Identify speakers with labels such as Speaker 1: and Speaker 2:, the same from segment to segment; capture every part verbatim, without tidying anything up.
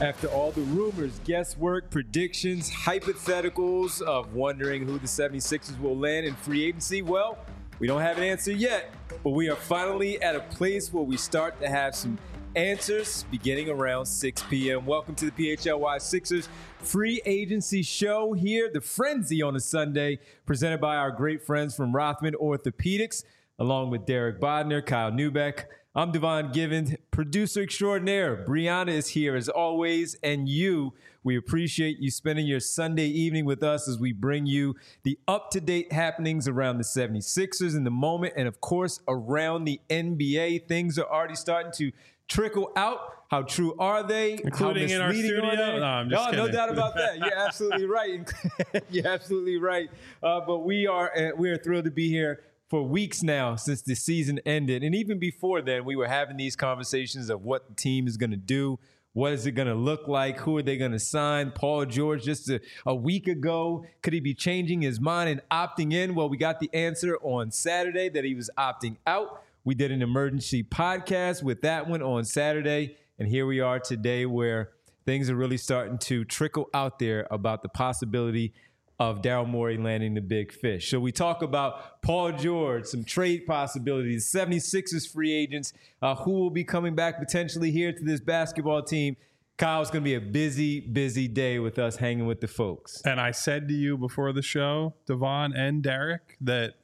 Speaker 1: After all the rumors, guesswork, predictions, hypotheticals of wondering who the seventy-sixers will land in free agency, well, we don't have an answer yet, but we are finally at a place where we start to have some answers beginning around six p.m. Welcome to the P H L Y Sixers free agency show here, the Frenzy on a Sunday, presented by our great friends from Rothman Orthopedics, along with Derek Bodner, Kyle Neubeck. I'm Devon Givens, producer extraordinaire. Brianna is here as always, and you, we appreciate you spending your Sunday evening with us as we bring you the up-to-date happenings around the seventy-sixers in the moment, and of course, around the N B A. Things are already starting to trickle out. How true are they?
Speaker 2: Including in our studio? No, I'm just
Speaker 1: no,
Speaker 2: kidding.
Speaker 1: No doubt about that. You're absolutely right. You're absolutely right. Uh, but we are uh, we are thrilled to be here for weeks now since the season ended. And even before then, we were having these conversations of what the team is going to do. What is it going to look like? Who are they going to sign? Paul George just a, a week ago, could he be changing his mind and opting in? Well, we got the answer on Saturday that he was opting out. We did an emergency podcast with that one on Saturday. And here we are today where things are really starting to trickle out there about the possibility of Daryl Morey landing the big fish. So we talk about Paul George, some trade possibilities, seventy-sixers free agents, uh, who will be coming back potentially here to this basketball team. Kyle's going to be a busy, busy day with us hanging with the folks.
Speaker 2: And I said to you before the show, Devon and Derek, that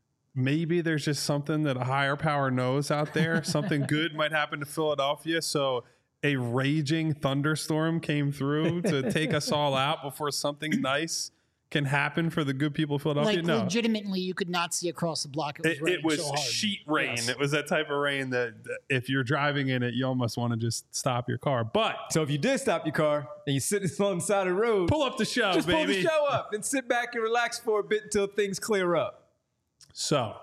Speaker 2: maybe there's just something that a higher power knows out there. Something good might happen to Philadelphia. So a raging thunderstorm came through to take us all out before something nice can happen for the good people of Philadelphia.
Speaker 3: Like,
Speaker 2: no.
Speaker 3: legitimately, you could not see across the block. It was,
Speaker 2: it, it was
Speaker 3: so hard.
Speaker 2: sheet rain.
Speaker 3: Yes.
Speaker 2: It was that type of rain that, that if you're driving in it, you almost want to just stop your car. But
Speaker 1: so if you did stop your car and you're sitting on the side of the road,
Speaker 2: pull up the show,
Speaker 1: just
Speaker 2: baby.
Speaker 1: pull the show up and sit back and relax for a bit until things clear up.
Speaker 2: So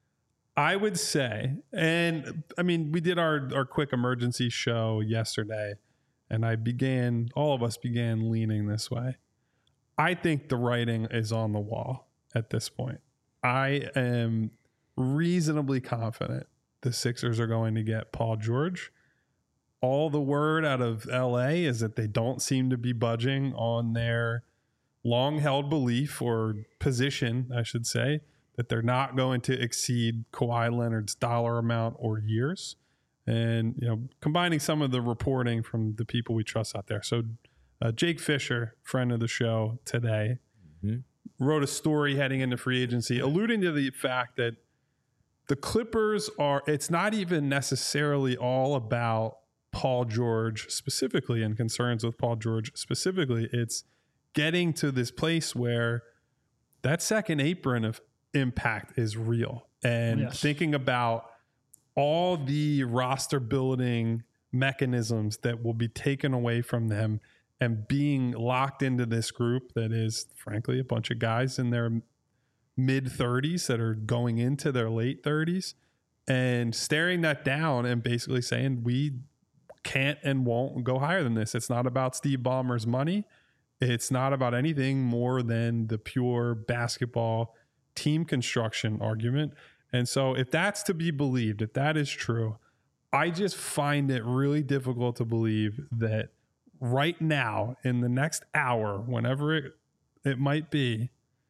Speaker 2: I would say, and I mean, we did our, our quick emergency show yesterday, and I began, all of us began leaning this way. I think the writing is on the wall at this point. I am reasonably confident the Sixers are going to get Paul George. All the word out of L A is that they don't seem to be budging on their long-held belief or position, I should say, that they're not going to exceed Kawhi Leonard's dollar amount or years. And, you know, combining some of the reporting from the people we trust out there. So Uh, Jake Fisher, friend of the show today, mm-hmm. wrote a story heading into free agency alluding to the fact that the Clippers are, it's not even necessarily all about Paul George specifically and concerns with Paul George specifically. It's getting to this place where that second apron of impact is real. And yes. thinking about all the roster building mechanisms that will be taken away from them and being locked into this group that is, frankly, a bunch of guys in their mid-thirties that are going into their late thirties, and staring that down and basically saying, we can't and won't go higher than this. It's not about Steve Ballmer's money. It's not about anything more than the pure basketball team construction argument. And so if that's to be believed, if that is true, I just find it really difficult to believe that right now, in the next hour, whenever it, it might be,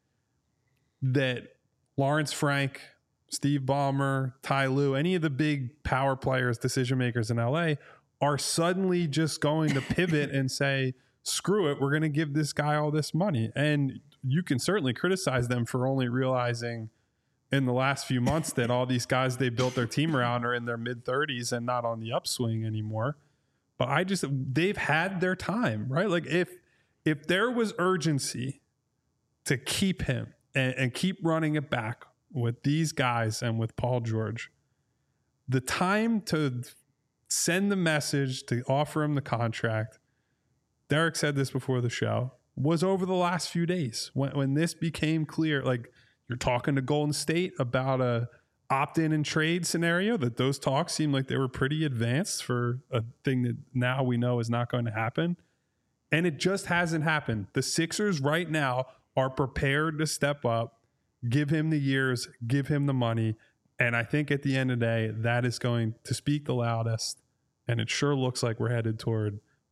Speaker 2: that Lawrence Frank, Steve Ballmer, Ty Lue, any of the big power players, decision makers in L A are suddenly just going to pivot and say, screw it, we're going to give this guy all this money. And you can certainly criticize them for only realizing in the last few months that all these guys they built their team around are in their mid-thirties and not on the upswing anymore. But I just, they've had their time, right? Like if if there was urgency to keep him and, and keep running it back with these guys and with Paul George, the time to send the message to offer him the contract, Derek said this before the show, was over the last few days when, when this became clear. Like, you're talking to Golden State about a opt-in and trade scenario, that those talks seem like they were pretty advanced for a thing that now we know is not going to happen. And it just hasn't happened. The Sixers right now are prepared to step up, give him the years, give him the money. And I think at the end of the day, that is going to speak the loudest. And it sure looks like we're headed toward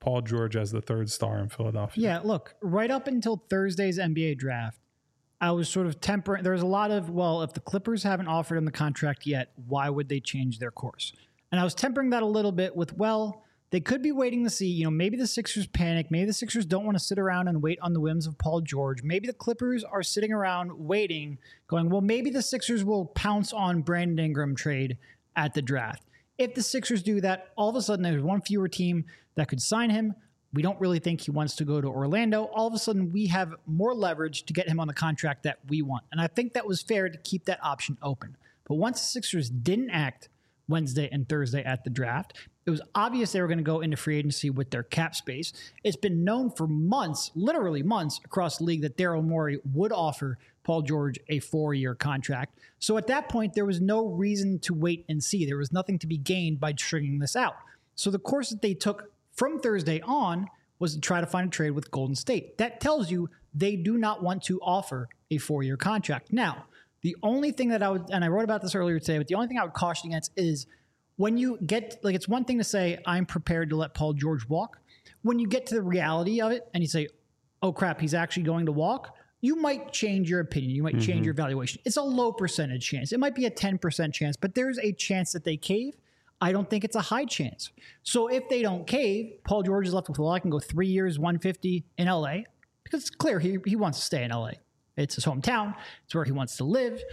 Speaker 2: Paul George as the third star in Philadelphia.
Speaker 3: Yeah, look, right up until Thursday's N B A draft, I was sort of tempering. There was a lot of, well, if the Clippers haven't offered him the contract yet, why would they change their course? And I was tempering that a little bit with, well, they could be waiting to see, you know, maybe the Sixers panic. Maybe the Sixers don't want to sit around and wait on the whims of Paul George. Maybe the Clippers are sitting around waiting, going, well, maybe the Sixers will pounce on Brandon Ingram trade at the draft. If the Sixers do that, all of a sudden there's one fewer team that could sign him. We don't really think he wants to go to Orlando. All of a sudden we have more leverage to get him on the contract that we want. And I think that was fair to keep that option open. But once the Sixers didn't act Wednesday and Thursday at the draft, it was obvious they were going to go into free agency with their cap space. It's been known for months, literally months, across the league that Daryl Morey would offer Paul George a four-year contract. So at that point, there was no reason to wait and see. There was nothing to be gained by stringing this out. So the course that they took from Thursday on was to try to find a trade with Golden State. That tells you they do not want to offer a four-year contract. Now, the only thing that I would, and I wrote about this earlier today, but the only thing I would caution against is when you get, like, it's one thing to say, I'm prepared to let Paul George walk. When you get to the reality of it and you say, oh crap, he's actually going to walk, you might change your opinion. You might mm-hmm. change your valuation. It's a low percentage chance. It might be a ten percent chance, but there's a chance that they cave. I don't think it's a high chance. So if they don't cave, Paul George is left with, well, I can go three years, one fifty in L A, because it's clear he, he wants to stay in L A. It's his hometown. It's where he wants to live.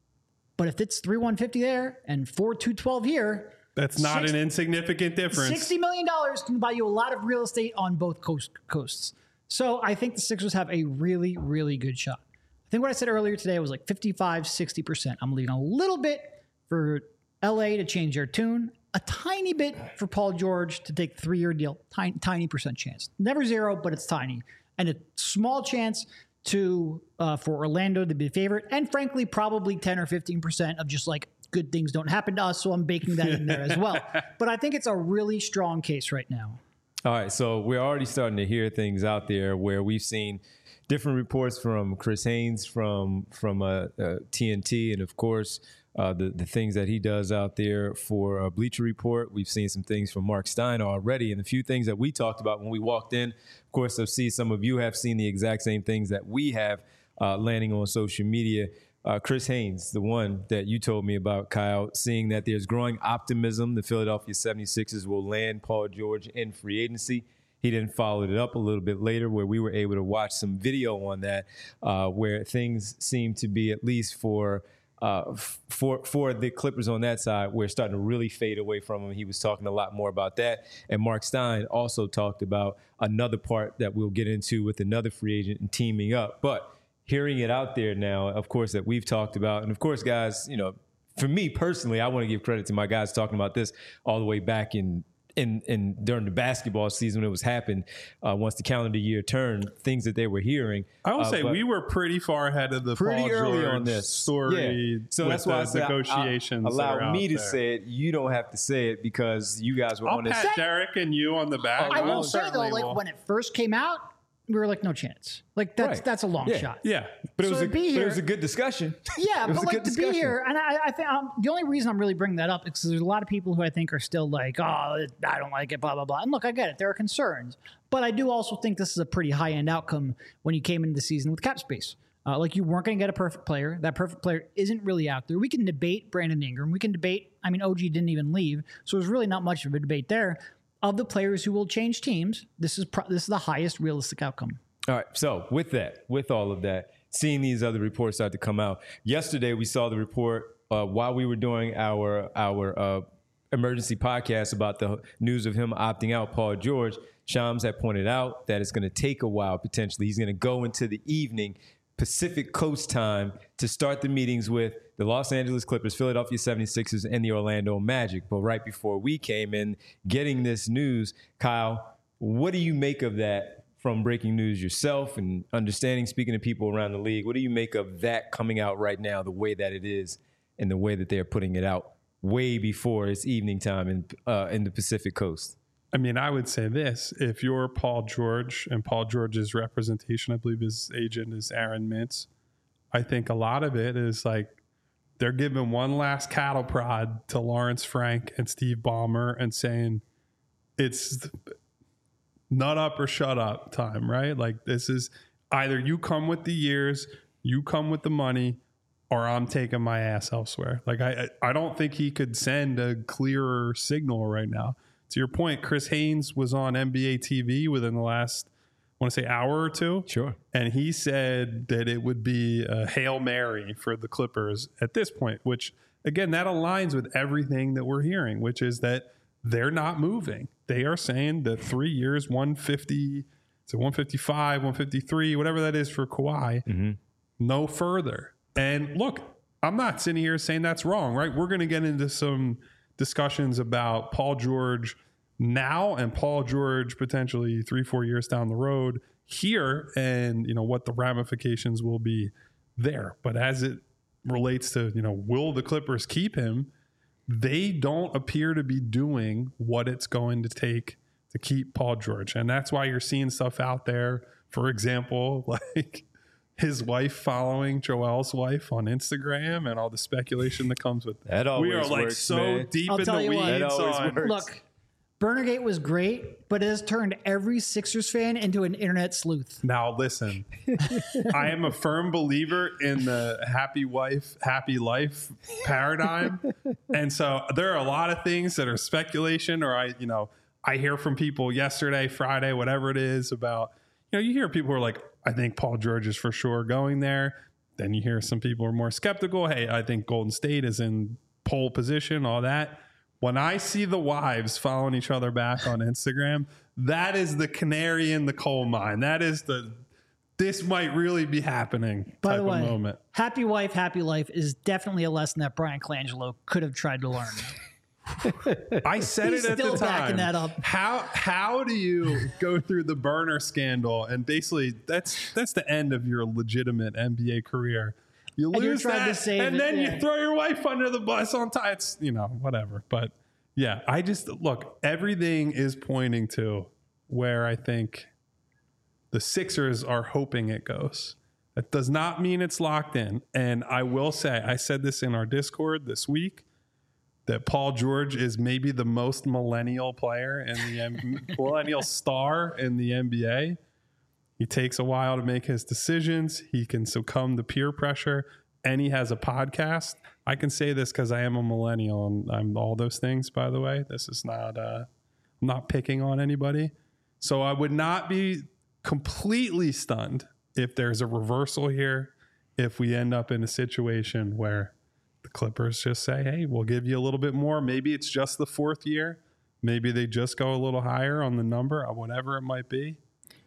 Speaker 3: But if it's three one fifty there and four two twelve here,
Speaker 2: that's not six, an insignificant difference.
Speaker 3: sixty million dollars can buy you a lot of real estate on both coast, coasts. So I think the Sixers have a really, really good shot. I think what I said earlier today was like fifty-five, sixty percent. I'm leaving a little bit for L A to change their tune, a tiny bit for Paul George to take a three-year deal, tiny, tiny percent chance. Never zero, but it's tiny. And a small chance to uh, for Orlando to be the favorite, and frankly, probably ten or fifteen percent of just like good things don't happen to us, so I'm baking that in there as well. But I think it's a really strong case right now.
Speaker 1: All right, so we're already starting to hear things out there where we've seen different reports from Chris Haynes from from uh, uh, T N T, and of course uh, the the things that he does out there for uh, Bleacher Report. We've seen some things from Mark Stein already, and a few things that we talked about when we walked in. Of course, I see some of you have seen the exact same things that we have uh, landing on social media. Uh, Chris Haynes, the one that you told me about, Kyle, seeing that there's growing optimism the Philadelphia seventy-sixers will land Paul George in free agency. He then followed it up a little bit later where we were able to watch some video on that uh, where things seem to be, at least for uh, for for the Clippers on that side, we're starting to really fade away from him. He was talking a lot more about that. And Mark Stein also talked about another part that we'll get into with another free agent and teaming up. But hearing it out there now, of course, that we've talked about. And of course, guys, you know, for me personally, I want to give credit to my guys talking about this all the way back in in, in during the basketball season when it was happened, uh, once the calendar year turned, things that they were hearing.
Speaker 2: I will
Speaker 1: uh,
Speaker 2: say we were pretty far ahead of the
Speaker 1: pretty
Speaker 2: Paul
Speaker 1: early
Speaker 2: George
Speaker 1: on this
Speaker 2: story.
Speaker 1: Yeah. So that's why I said
Speaker 2: negotiations
Speaker 1: I, I, allow me to
Speaker 2: there.
Speaker 1: say it. You don't have to say it because you guys were
Speaker 2: I'll
Speaker 1: on this.
Speaker 2: pat Derek and you on the back.
Speaker 3: I will
Speaker 2: I
Speaker 3: say though, like
Speaker 2: will.
Speaker 3: when it first came out, we were like, no chance. Like that's
Speaker 1: Right.
Speaker 3: that's a long
Speaker 1: Yeah.
Speaker 3: shot.
Speaker 2: Yeah.
Speaker 1: But it
Speaker 3: So
Speaker 1: was
Speaker 3: to
Speaker 1: a,
Speaker 3: be
Speaker 1: but it
Speaker 3: here-
Speaker 1: was a good discussion.
Speaker 3: Yeah,
Speaker 1: It was
Speaker 3: but
Speaker 1: a
Speaker 3: like
Speaker 1: good
Speaker 3: to be
Speaker 1: discussion.
Speaker 3: here, and I, I think um, the only reason I'm really bringing that up is because there's a lot of people who I think are still like, oh, I don't like it, blah blah blah. And look, I get it, there are concerns, but I do also think this is a pretty high end outcome when you came into the season with cap space. Uh, like you weren't going to get a perfect player. That perfect player isn't really out there. We can debate Brandon Ingram. We can debate. I mean, O G didn't even leave, so there's really not much of a debate there. Of the players who will change teams, this is pro- this is the highest realistic outcome.
Speaker 1: All right. So with that, with all of that, seeing these other reports start to come out. Yesterday, we saw the report uh, while we were doing our our uh, emergency podcast about the news of him opting out, Paul George. Shams had pointed out that it's going to take a while, potentially. He's going to go into the evening Pacific Coast time to start the meetings with the Los Angeles Clippers, Philadelphia seventy-sixers, and the Orlando Magic. But right before we came in, getting this news, Kyle, what do you make of that? From breaking news yourself and understanding, speaking to people around the league, what do you make of that coming out right now, the way that it is and the way that they're putting it out way before it's evening time in, uh, in the Pacific Coast?
Speaker 2: I mean, I would say this. If you're Paul George and Paul George's representation, I believe his agent is Aaron Mintz, I think a lot of it is like they're giving one last cattle prod to Lawrence Frank and Steve Ballmer and saying it's nut up or shut up time, right? Like this is either you come with the years, you come with the money, or I'm taking my ass elsewhere. Like I, I don't think he could send a clearer signal right now. To your point, Chris Haynes was on N B A T V within the last, I want to say, hour or two.
Speaker 1: Sure.
Speaker 2: And he said that it would be a Hail Mary for the Clippers at this point, which, again, that aligns with everything that we're hearing, which is that they're not moving. They are saying that three years, one fifty, so one fifty-five, one fifty-three, whatever that is for Kawhi, mm-hmm. no further. And look, I'm not sitting here saying that's wrong, right? We're going to get into some discussions about Paul George now and Paul George potentially three, four years down the road here, and you know what the ramifications will be there. But as it relates to, you know, will the Clippers keep him? They don't appear to be doing what it's going to take to keep Paul George. And that's why you're seeing stuff out there. For example, like his wife following Joel's wife on Instagram and all the speculation that comes with that.
Speaker 1: That always
Speaker 2: we are like
Speaker 1: works,
Speaker 2: so
Speaker 1: man.
Speaker 2: deep
Speaker 3: I'll
Speaker 2: in
Speaker 3: tell
Speaker 2: the
Speaker 3: you what.
Speaker 2: weeds
Speaker 1: That always
Speaker 2: on.
Speaker 1: works.
Speaker 3: Look, Burnergate was great, but it has turned every Sixers fan into an internet sleuth.
Speaker 2: Now, listen, I am a firm believer in the happy wife, happy life paradigm. And so there are a lot of things that are speculation, or I, you know, I hear from people yesterday, Friday, whatever it is about, you know, you hear people who are like, I think Paul George is for sure going there. Then you hear some people are more skeptical. Hey, I think Golden State is in pole position, all that. When I see the wives following each other back on Instagram, that is the canary in the coal mine. That is the, this might really be happening
Speaker 3: By
Speaker 2: type
Speaker 3: the way,
Speaker 2: of moment.
Speaker 3: happy wife, happy life is definitely a lesson that Brian Colangelo could have tried to learn.
Speaker 2: I said
Speaker 3: He's
Speaker 2: it at
Speaker 3: still
Speaker 2: the time.
Speaker 3: backing that up.
Speaker 2: How how do you go through the burner scandal and basically that's that's the end of your legitimate N B A career? You
Speaker 3: And you're
Speaker 2: lose
Speaker 3: trying to
Speaker 2: that,
Speaker 3: save
Speaker 2: and
Speaker 3: it,
Speaker 2: then
Speaker 3: yeah.
Speaker 2: you throw your wife under the bus on time. It's, you know, whatever. But yeah, I just look. Everything is pointing to where I think the Sixers are hoping it goes. That does not mean it's locked in. And I will say, I said this in our Discord this week, that Paul George is maybe the most millennial player in the M- millennial star in the N B A. He takes a while to make his decisions. He can succumb to peer pressure, and he has a podcast. I can say this because I am a millennial, and I'm all those things, by the way. This is not, uh, I'm not picking on anybody. So I would not be completely stunned if there's a reversal here, if we end up in a situation where the Clippers just say, hey, we'll give you a little bit more. Maybe it's just the fourth year. Maybe they just go a little higher on the number, or whatever it might be.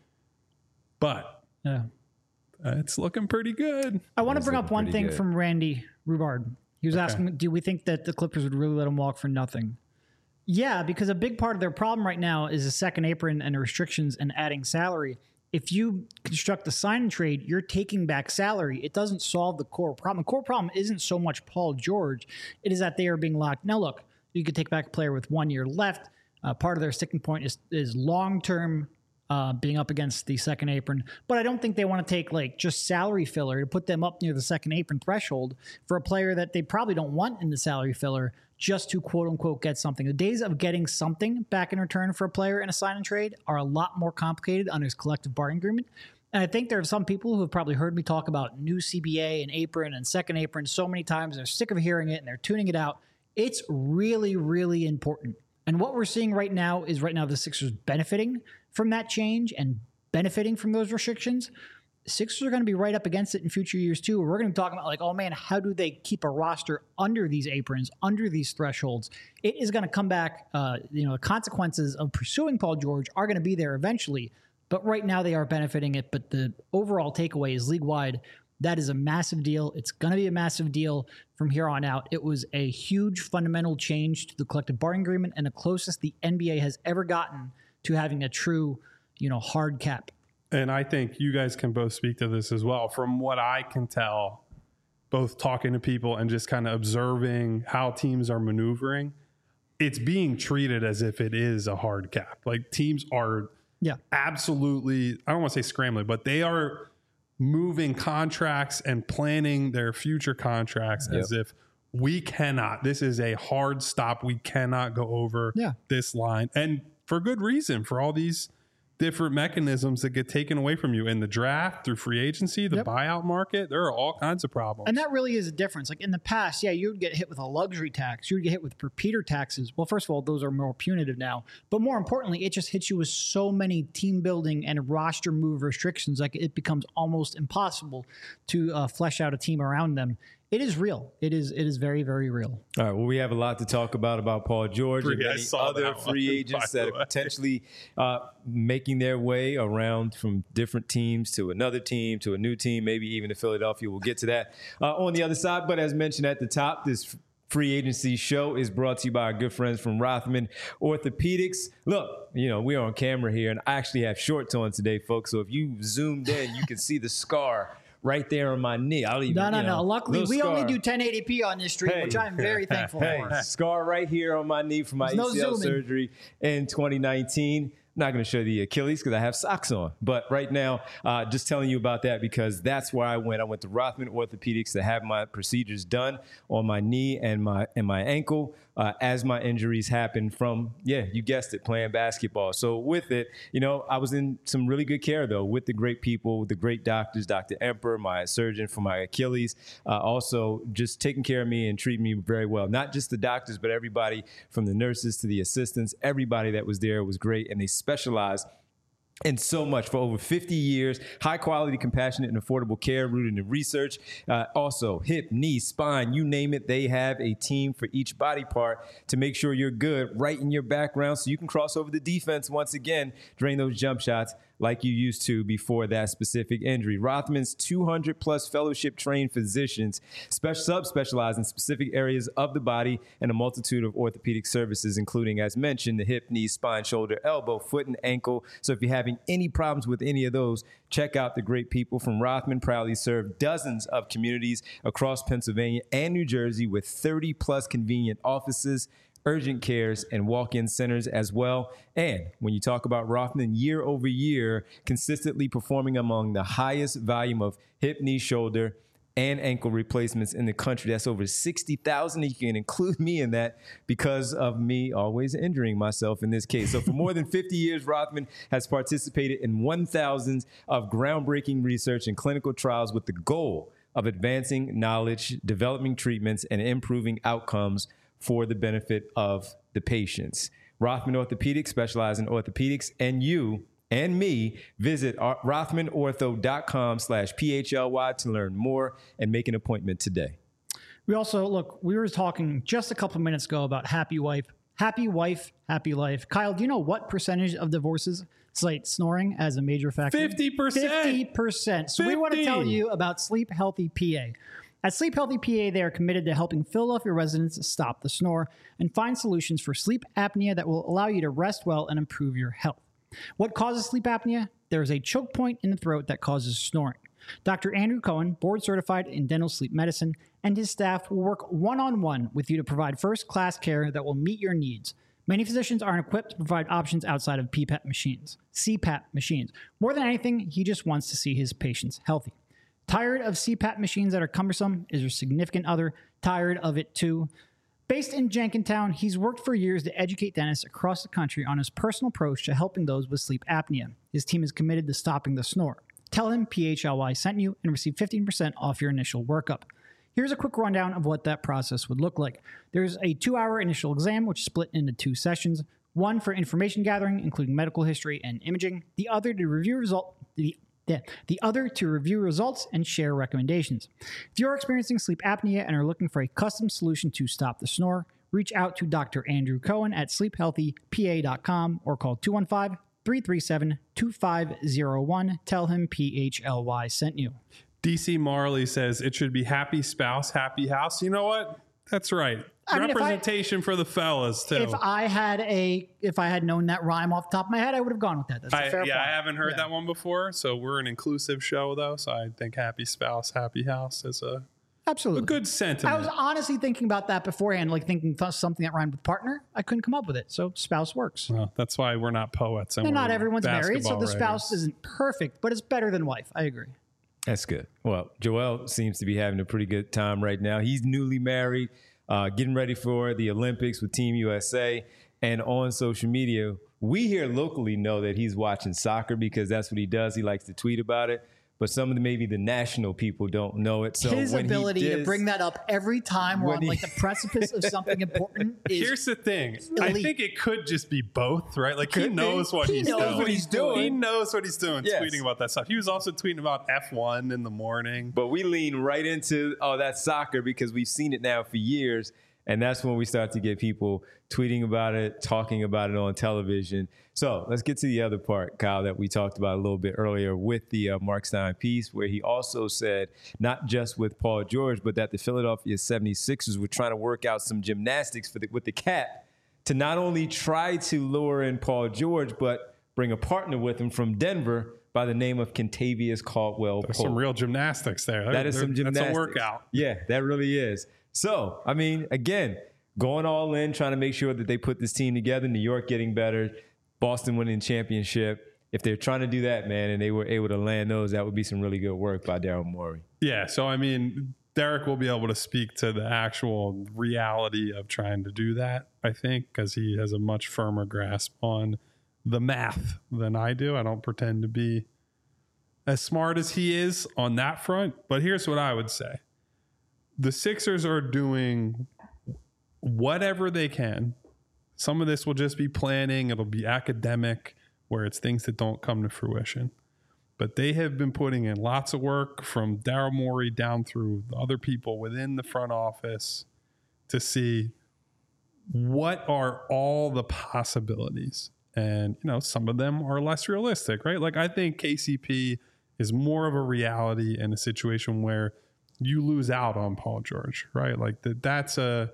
Speaker 2: But
Speaker 3: Yeah.
Speaker 2: uh, it's looking pretty good.
Speaker 3: I want to
Speaker 1: That's
Speaker 3: bring up
Speaker 1: looking
Speaker 3: one
Speaker 1: pretty
Speaker 3: thing
Speaker 1: good.
Speaker 3: from Randy Rubard. He was
Speaker 2: Okay.
Speaker 3: asking, do we think that the Clippers would really let him walk for nothing? Yeah, because a big part of their problem right now is a second apron and the restrictions and adding salary. If you construct the sign and trade, you're taking back salary. It doesn't solve the core problem. The core problem isn't so much Paul George. It is that they are being locked. Now, look, you could take back a player with one year left. Uh, part of their sticking point is, is long-term uh, being up against the second apron. But I don't think they want to take like just salary filler to put them up near the second apron threshold for a player that they probably don't want in the salary filler just to quote unquote get something. The days of getting something back in return for a player in a sign and trade are a lot more complicated under his collective bargaining agreement. And I think there are some people who have probably heard me talk about new C B A and apron and second apron so many times. They're sick of hearing it and they're tuning it out. It's really, really important. And what we're seeing right now is right now the Sixers benefiting from that change and benefiting from those restrictions. Sixers are going to be right up against it in future years too. We're going to be talking about like, oh man, how do they keep a roster under these aprons, under these thresholds? It is going to come back. Uh, you know, the consequences of pursuing Paul George are going to be there eventually, but right now they are benefiting it. But the overall takeaway is league wide. That is a massive deal. It's going to be a massive deal from here on out. It was a huge fundamental change to the collective bargaining agreement and the closest the N B A has ever gotten to having a true, you know, hard cap.
Speaker 2: And I think you guys can both speak to this as well. From what I can tell, both talking to people and just kind of observing how teams are maneuvering, it's being treated as if it is a hard cap. Like teams are
Speaker 3: Yeah.
Speaker 2: absolutely, I don't want to say scrambling, but they are moving contracts and planning their future contracts
Speaker 1: Yep.
Speaker 2: as if we cannot, this is a hard stop. We cannot go over
Speaker 3: Yeah.
Speaker 2: this line. And for good reason, for all these different mechanisms that get taken away from you in the draft, through free agency, the
Speaker 3: Yep.
Speaker 2: buyout market. There are all kinds of problems.
Speaker 3: And that really is a difference. Like in the past, yeah, you would get hit with a luxury tax. You would get hit with repeater taxes. Well, first of all, those are more punitive now. But more importantly, it just hits you with so many team building and roster move restrictions. Like it becomes almost impossible to uh, flesh out a team around them. It is real. It is It is very, very real.
Speaker 1: All right. Well, we have a lot to talk about about Paul George and
Speaker 2: Free- I
Speaker 1: many
Speaker 2: saw
Speaker 1: other
Speaker 2: that one,
Speaker 1: free
Speaker 2: by
Speaker 1: agents
Speaker 2: the
Speaker 1: that are
Speaker 2: way.
Speaker 1: potentially uh, making their way around from different teams to another team to a new team, maybe even to Philadelphia. We'll get to that uh, on the other side. But as mentioned at the top, this free agency show is brought to you by our good friends from Rothman Orthopedics. Look, you know, we're on camera here, and I actually have shorts on today, folks. So if you zoomed in, you can see the scar right there on my knee. I'll even,
Speaker 3: No, no,
Speaker 1: you know,
Speaker 3: no. Luckily,
Speaker 1: little
Speaker 3: we
Speaker 1: scar.
Speaker 3: only do ten eighty p on this stream,
Speaker 1: Hey.
Speaker 3: which I'm very thankful
Speaker 1: Hey,
Speaker 3: for.
Speaker 1: scar right here on my knee from my
Speaker 3: There's no
Speaker 1: A C L
Speaker 3: zooming.
Speaker 1: surgery in twenty nineteen. I'm not going to show the Achilles because I have socks on. But right now, uh, just telling you about that because that's where I went. I went to Rothman Orthopedics to have my procedures done on my knee and my and my ankle uh, as my injuries happened from, yeah, you guessed it, playing basketball. So with it, you know, I was in some really good care, though, with the great people, the great doctors, Doctor Emperor, my surgeon for my Achilles, uh, also just taking care of me and treating me very well. Not just the doctors, but everybody from the nurses to the assistants, everybody that was there was great, and they specialized in so much for over fifty years. High quality, compassionate, and affordable care rooted in research. Uh, also, hip, knee, spine, you name it, they have a team for each body part to make sure you're good right in your background so you can cross over the defense once again, drain those jump shots like you used to before that specific injury. Rothman's two hundred plus fellowship trained physicians special subspecialize in specific areas of the body and a multitude of orthopedic services, including, as mentioned, the hip, knee, spine, shoulder, elbow, foot, and ankle. So if you're having any problems with any of those, check out the great people from Rothman. Proudly serve dozens of communities across Pennsylvania and New Jersey with thirty plus convenient offices, urgent cares, and walk-in centers as well. And when you talk about Rothman, year over year, consistently performing among the highest volume of hip, knee, shoulder, and ankle replacements in the country. That's over sixty thousand. You can include me in that because of me always injuring myself in this case. So for more than fifty years, Rothman has participated in one thousand of groundbreaking research and clinical trials with the goal of advancing knowledge, developing treatments, and improving outcomes for the benefit of the patients. Rothman Orthopedics specialize in orthopedics, and you and me visit rothman ortho dot com slash P H L Y to learn more and make an appointment today.
Speaker 3: We also, look, we were talking just a couple minutes ago about happy wife, happy wife, happy life. Kyle, do you know what percentage of divorces cite snoring as a major factor?
Speaker 2: fifty percent.
Speaker 3: fifty percent. So we want to tell
Speaker 2: fifty.
Speaker 3: you about Sleep Healthy P A. At Sleep Healthy P A, they are committed to helping Philadelphia residents stop the snore and find solutions for sleep apnea that will allow you to rest well and improve your health. What causes sleep apnea? There is a choke point in the throat that causes snoring. Doctor Andrew Cohen, board certified in dental sleep medicine, and his staff will work one-on-one with you to provide first-class care that will meet your needs. Many physicians aren't equipped to provide options outside of P PAP machines, C PAP machines. More than anything, he just wants to see his patients healthy. Tired of C PAP machines that are cumbersome? Is your significant other tired of it too? Based in Jenkintown, he's worked for years to educate dentists across the country on his personal approach to helping those with sleep apnea. His team is committed to stopping the snore. Tell him P H L Y sent you and receive fifteen percent off your initial workup. Here's a quick rundown of what that process would look like. There's a two-hour initial exam, which is split into two sessions. One for information gathering, including medical history and imaging. The other to review result. The The, the other to review results and share recommendations. If you're experiencing sleep apnea and are looking for a custom solution to stop the snore, reach out to Doctor Andrew Cohen at sleep healthy P A dot com or call two one five, three three seven, two five zero one. Tell him P H L Y sent you.
Speaker 2: D C Marley says it should be happy spouse, happy house. You know what? That's right.
Speaker 3: I mean, if I-
Speaker 2: Representation for the fellas too.
Speaker 3: If I had a, if I had known that rhyme off the top of my head, I would have gone with that. That's a
Speaker 2: I,
Speaker 3: fair
Speaker 2: yeah,
Speaker 3: point.
Speaker 2: I haven't heard
Speaker 3: Yeah.
Speaker 2: that one before. So we're an inclusive show, though. So I think happy spouse, happy house is a,
Speaker 3: Absolutely.
Speaker 2: a good sentiment.
Speaker 3: I was honestly thinking about that beforehand, like thinking th- something that rhymed with partner. I couldn't come up with it. So spouse works.
Speaker 2: Well, that's why we're not poets. And
Speaker 3: And
Speaker 2: we're
Speaker 3: not everyone's married, so
Speaker 2: basketball
Speaker 3: the spouse
Speaker 2: writers.
Speaker 3: isn't perfect, but it's better than wife. I agree.
Speaker 1: That's good. Well, Joel seems to be having a pretty good time right now. He's newly married, uh, getting ready for the Olympics with Team U S A. And on social media, we here locally know that he's watching soccer because that's what he does. He likes to tweet about it. But some of the, maybe the national people don't know it. So
Speaker 3: his
Speaker 1: when
Speaker 3: ability
Speaker 1: he does,
Speaker 3: to bring that up every time we're on
Speaker 1: he,
Speaker 3: like the precipice of something important is
Speaker 2: Here's the thing.
Speaker 3: elite.
Speaker 2: I think it could just be both, right? Like he
Speaker 1: Could be.
Speaker 2: knows what
Speaker 3: He
Speaker 2: he's
Speaker 3: knows
Speaker 2: doing.
Speaker 3: what he's doing.
Speaker 2: He knows what he's doing,
Speaker 1: Yes.
Speaker 2: tweeting about that stuff. He was also tweeting about F one in the morning.
Speaker 1: But we lean right into, oh, that's soccer because we've seen it now for years. And that's when we start to get people tweeting about it, talking about it on television. So let's get to the other part, Kyle, that we talked about a little bit earlier with the uh, Mark Stein piece, where he also said, not just with Paul George, but that the Philadelphia seventy-sixers were trying to work out some gymnastics for the, with the Cat to not only try to lure in Paul George, but bring a partner with him from Denver by the name of Kentavious Caldwell
Speaker 2: There's
Speaker 1: Pope.
Speaker 2: some real gymnastics there.
Speaker 1: That is some gymnastics.
Speaker 2: That's a workout.
Speaker 1: Yeah, that really is. So, I mean, again, going all in, trying to make sure that they put this team together. New York getting better, Boston winning championship. If they're trying to do that, man, and they were able to land those, that would be some really good work by Daryl Morey.
Speaker 2: Yeah, so I mean, Derek will be able to speak to the actual reality of trying to do that, I think, because he has a much firmer grasp on the math than I do. I don't pretend to be as smart as he is on that front, but here's what I would say. The Sixers are doing whatever they can. Some of this will just be planning. It'll be academic, where it's things that don't come to fruition. But they have been putting in lots of work from Daryl Morey down through the other people within the front office to see what are all the possibilities. And, you know, some of them are less realistic, right? Like I think K C P is more of a reality in a situation where you lose out on Paul George, right? Like that that's a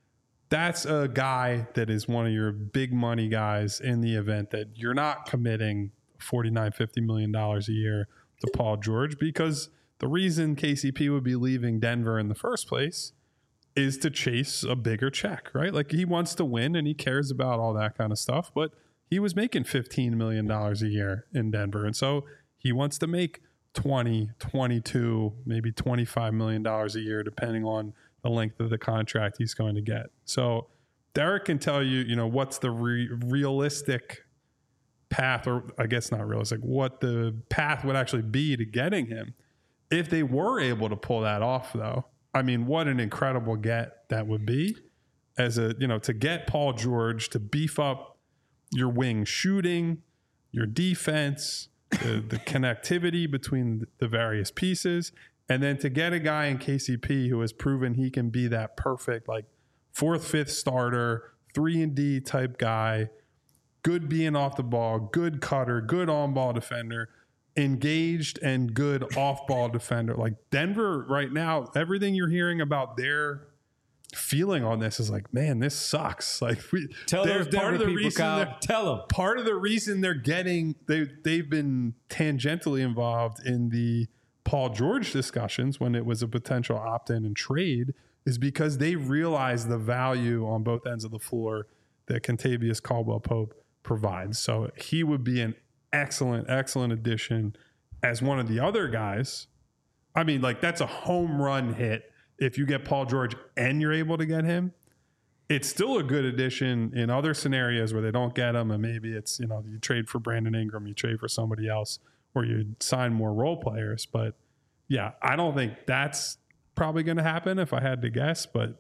Speaker 2: that's a guy that is one of your big money guys in the event that you're not committing forty-nine, fifty million dollars a year to Paul George, because the reason K C P would be leaving Denver in the first place is to chase a bigger check, right? Like he wants to win and he cares about all that kind of stuff, but he was making fifteen million dollars a year in Denver. And so he wants to make twenty, twenty-two, maybe twenty-five million dollars a year, depending on the length of the contract he's going to get. So Derek can tell you, you know, what's the re- realistic path, or I guess not realistic, what the path would actually be to getting him. If they were able to pull that off, though, I mean, what an incredible get that would be as a, you know, to get Paul George to beef up your wing shooting, your defense, the, the connectivity between the various pieces, and then to get a guy in K C P who has proven he can be that perfect, like fourth, fifth starter, three and D type guy, good being off the ball, good cutter, good on-ball defender, engaged and good off-ball defender. Like Denver right now, everything you're hearing about their feeling on this is like, man, this sucks. Like we
Speaker 1: Tell those Denver people, Kyle. Tell them.
Speaker 2: Part of the reason they're getting they they've been tangentially involved in the Paul George discussions when it was a potential opt-in and trade is because they realize the value on both ends of the floor that Kentavious Caldwell Pope provides. So he would be an excellent, excellent addition as one of the other guys. I mean, like that's a home run hit. If you get Paul George and you're able to get him, it's still a good addition in other scenarios where they don't get him. And maybe it's, you know, you trade for Brandon Ingram, you trade for somebody else, or you sign more role players. But yeah, I don't think that's probably going to happen if I had to guess, but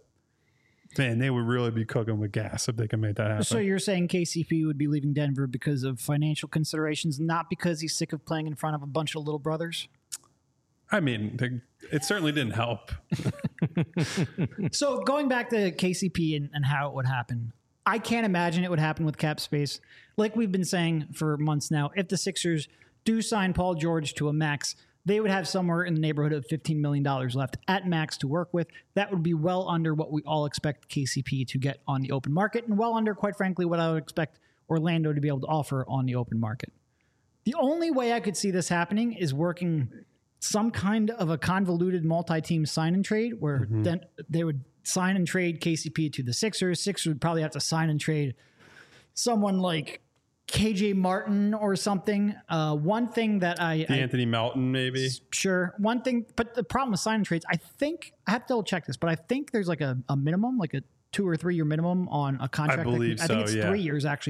Speaker 2: man, they would really be cooking with gas if they can make that happen.
Speaker 3: So you're saying K C P would be leaving Denver because of financial considerations, not because he's sick of playing in front of a bunch of little brothers?
Speaker 2: I mean, they, it certainly didn't help.
Speaker 3: So going back to K C P and, and how it would happen, I can't imagine it would happen with cap space. Like we've been saying for months now, if the Sixers do sign Paul George to a max, they would have somewhere in the neighborhood of fifteen million dollars left at max to work with. That would be well under what we all expect K C P to get on the open market, and well under, quite frankly, what I would expect Orlando to be able to offer on the open market. The only way I could see this happening is working some kind of a convoluted multi-team sign and trade where mm-hmm. then they would sign and trade K C P to the Sixers. Sixers would probably have to sign and trade someone like K J Martin or something. Uh, one thing that I...
Speaker 2: I Anthony Melton, maybe.
Speaker 3: Sure. One thing, but the problem with sign and trades, I think, I have to double check this, but I think there's like a, a minimum, like a two or three year minimum on a contract.
Speaker 2: I believe
Speaker 3: that,
Speaker 2: so,
Speaker 3: I think it's
Speaker 2: yeah.
Speaker 3: three years actually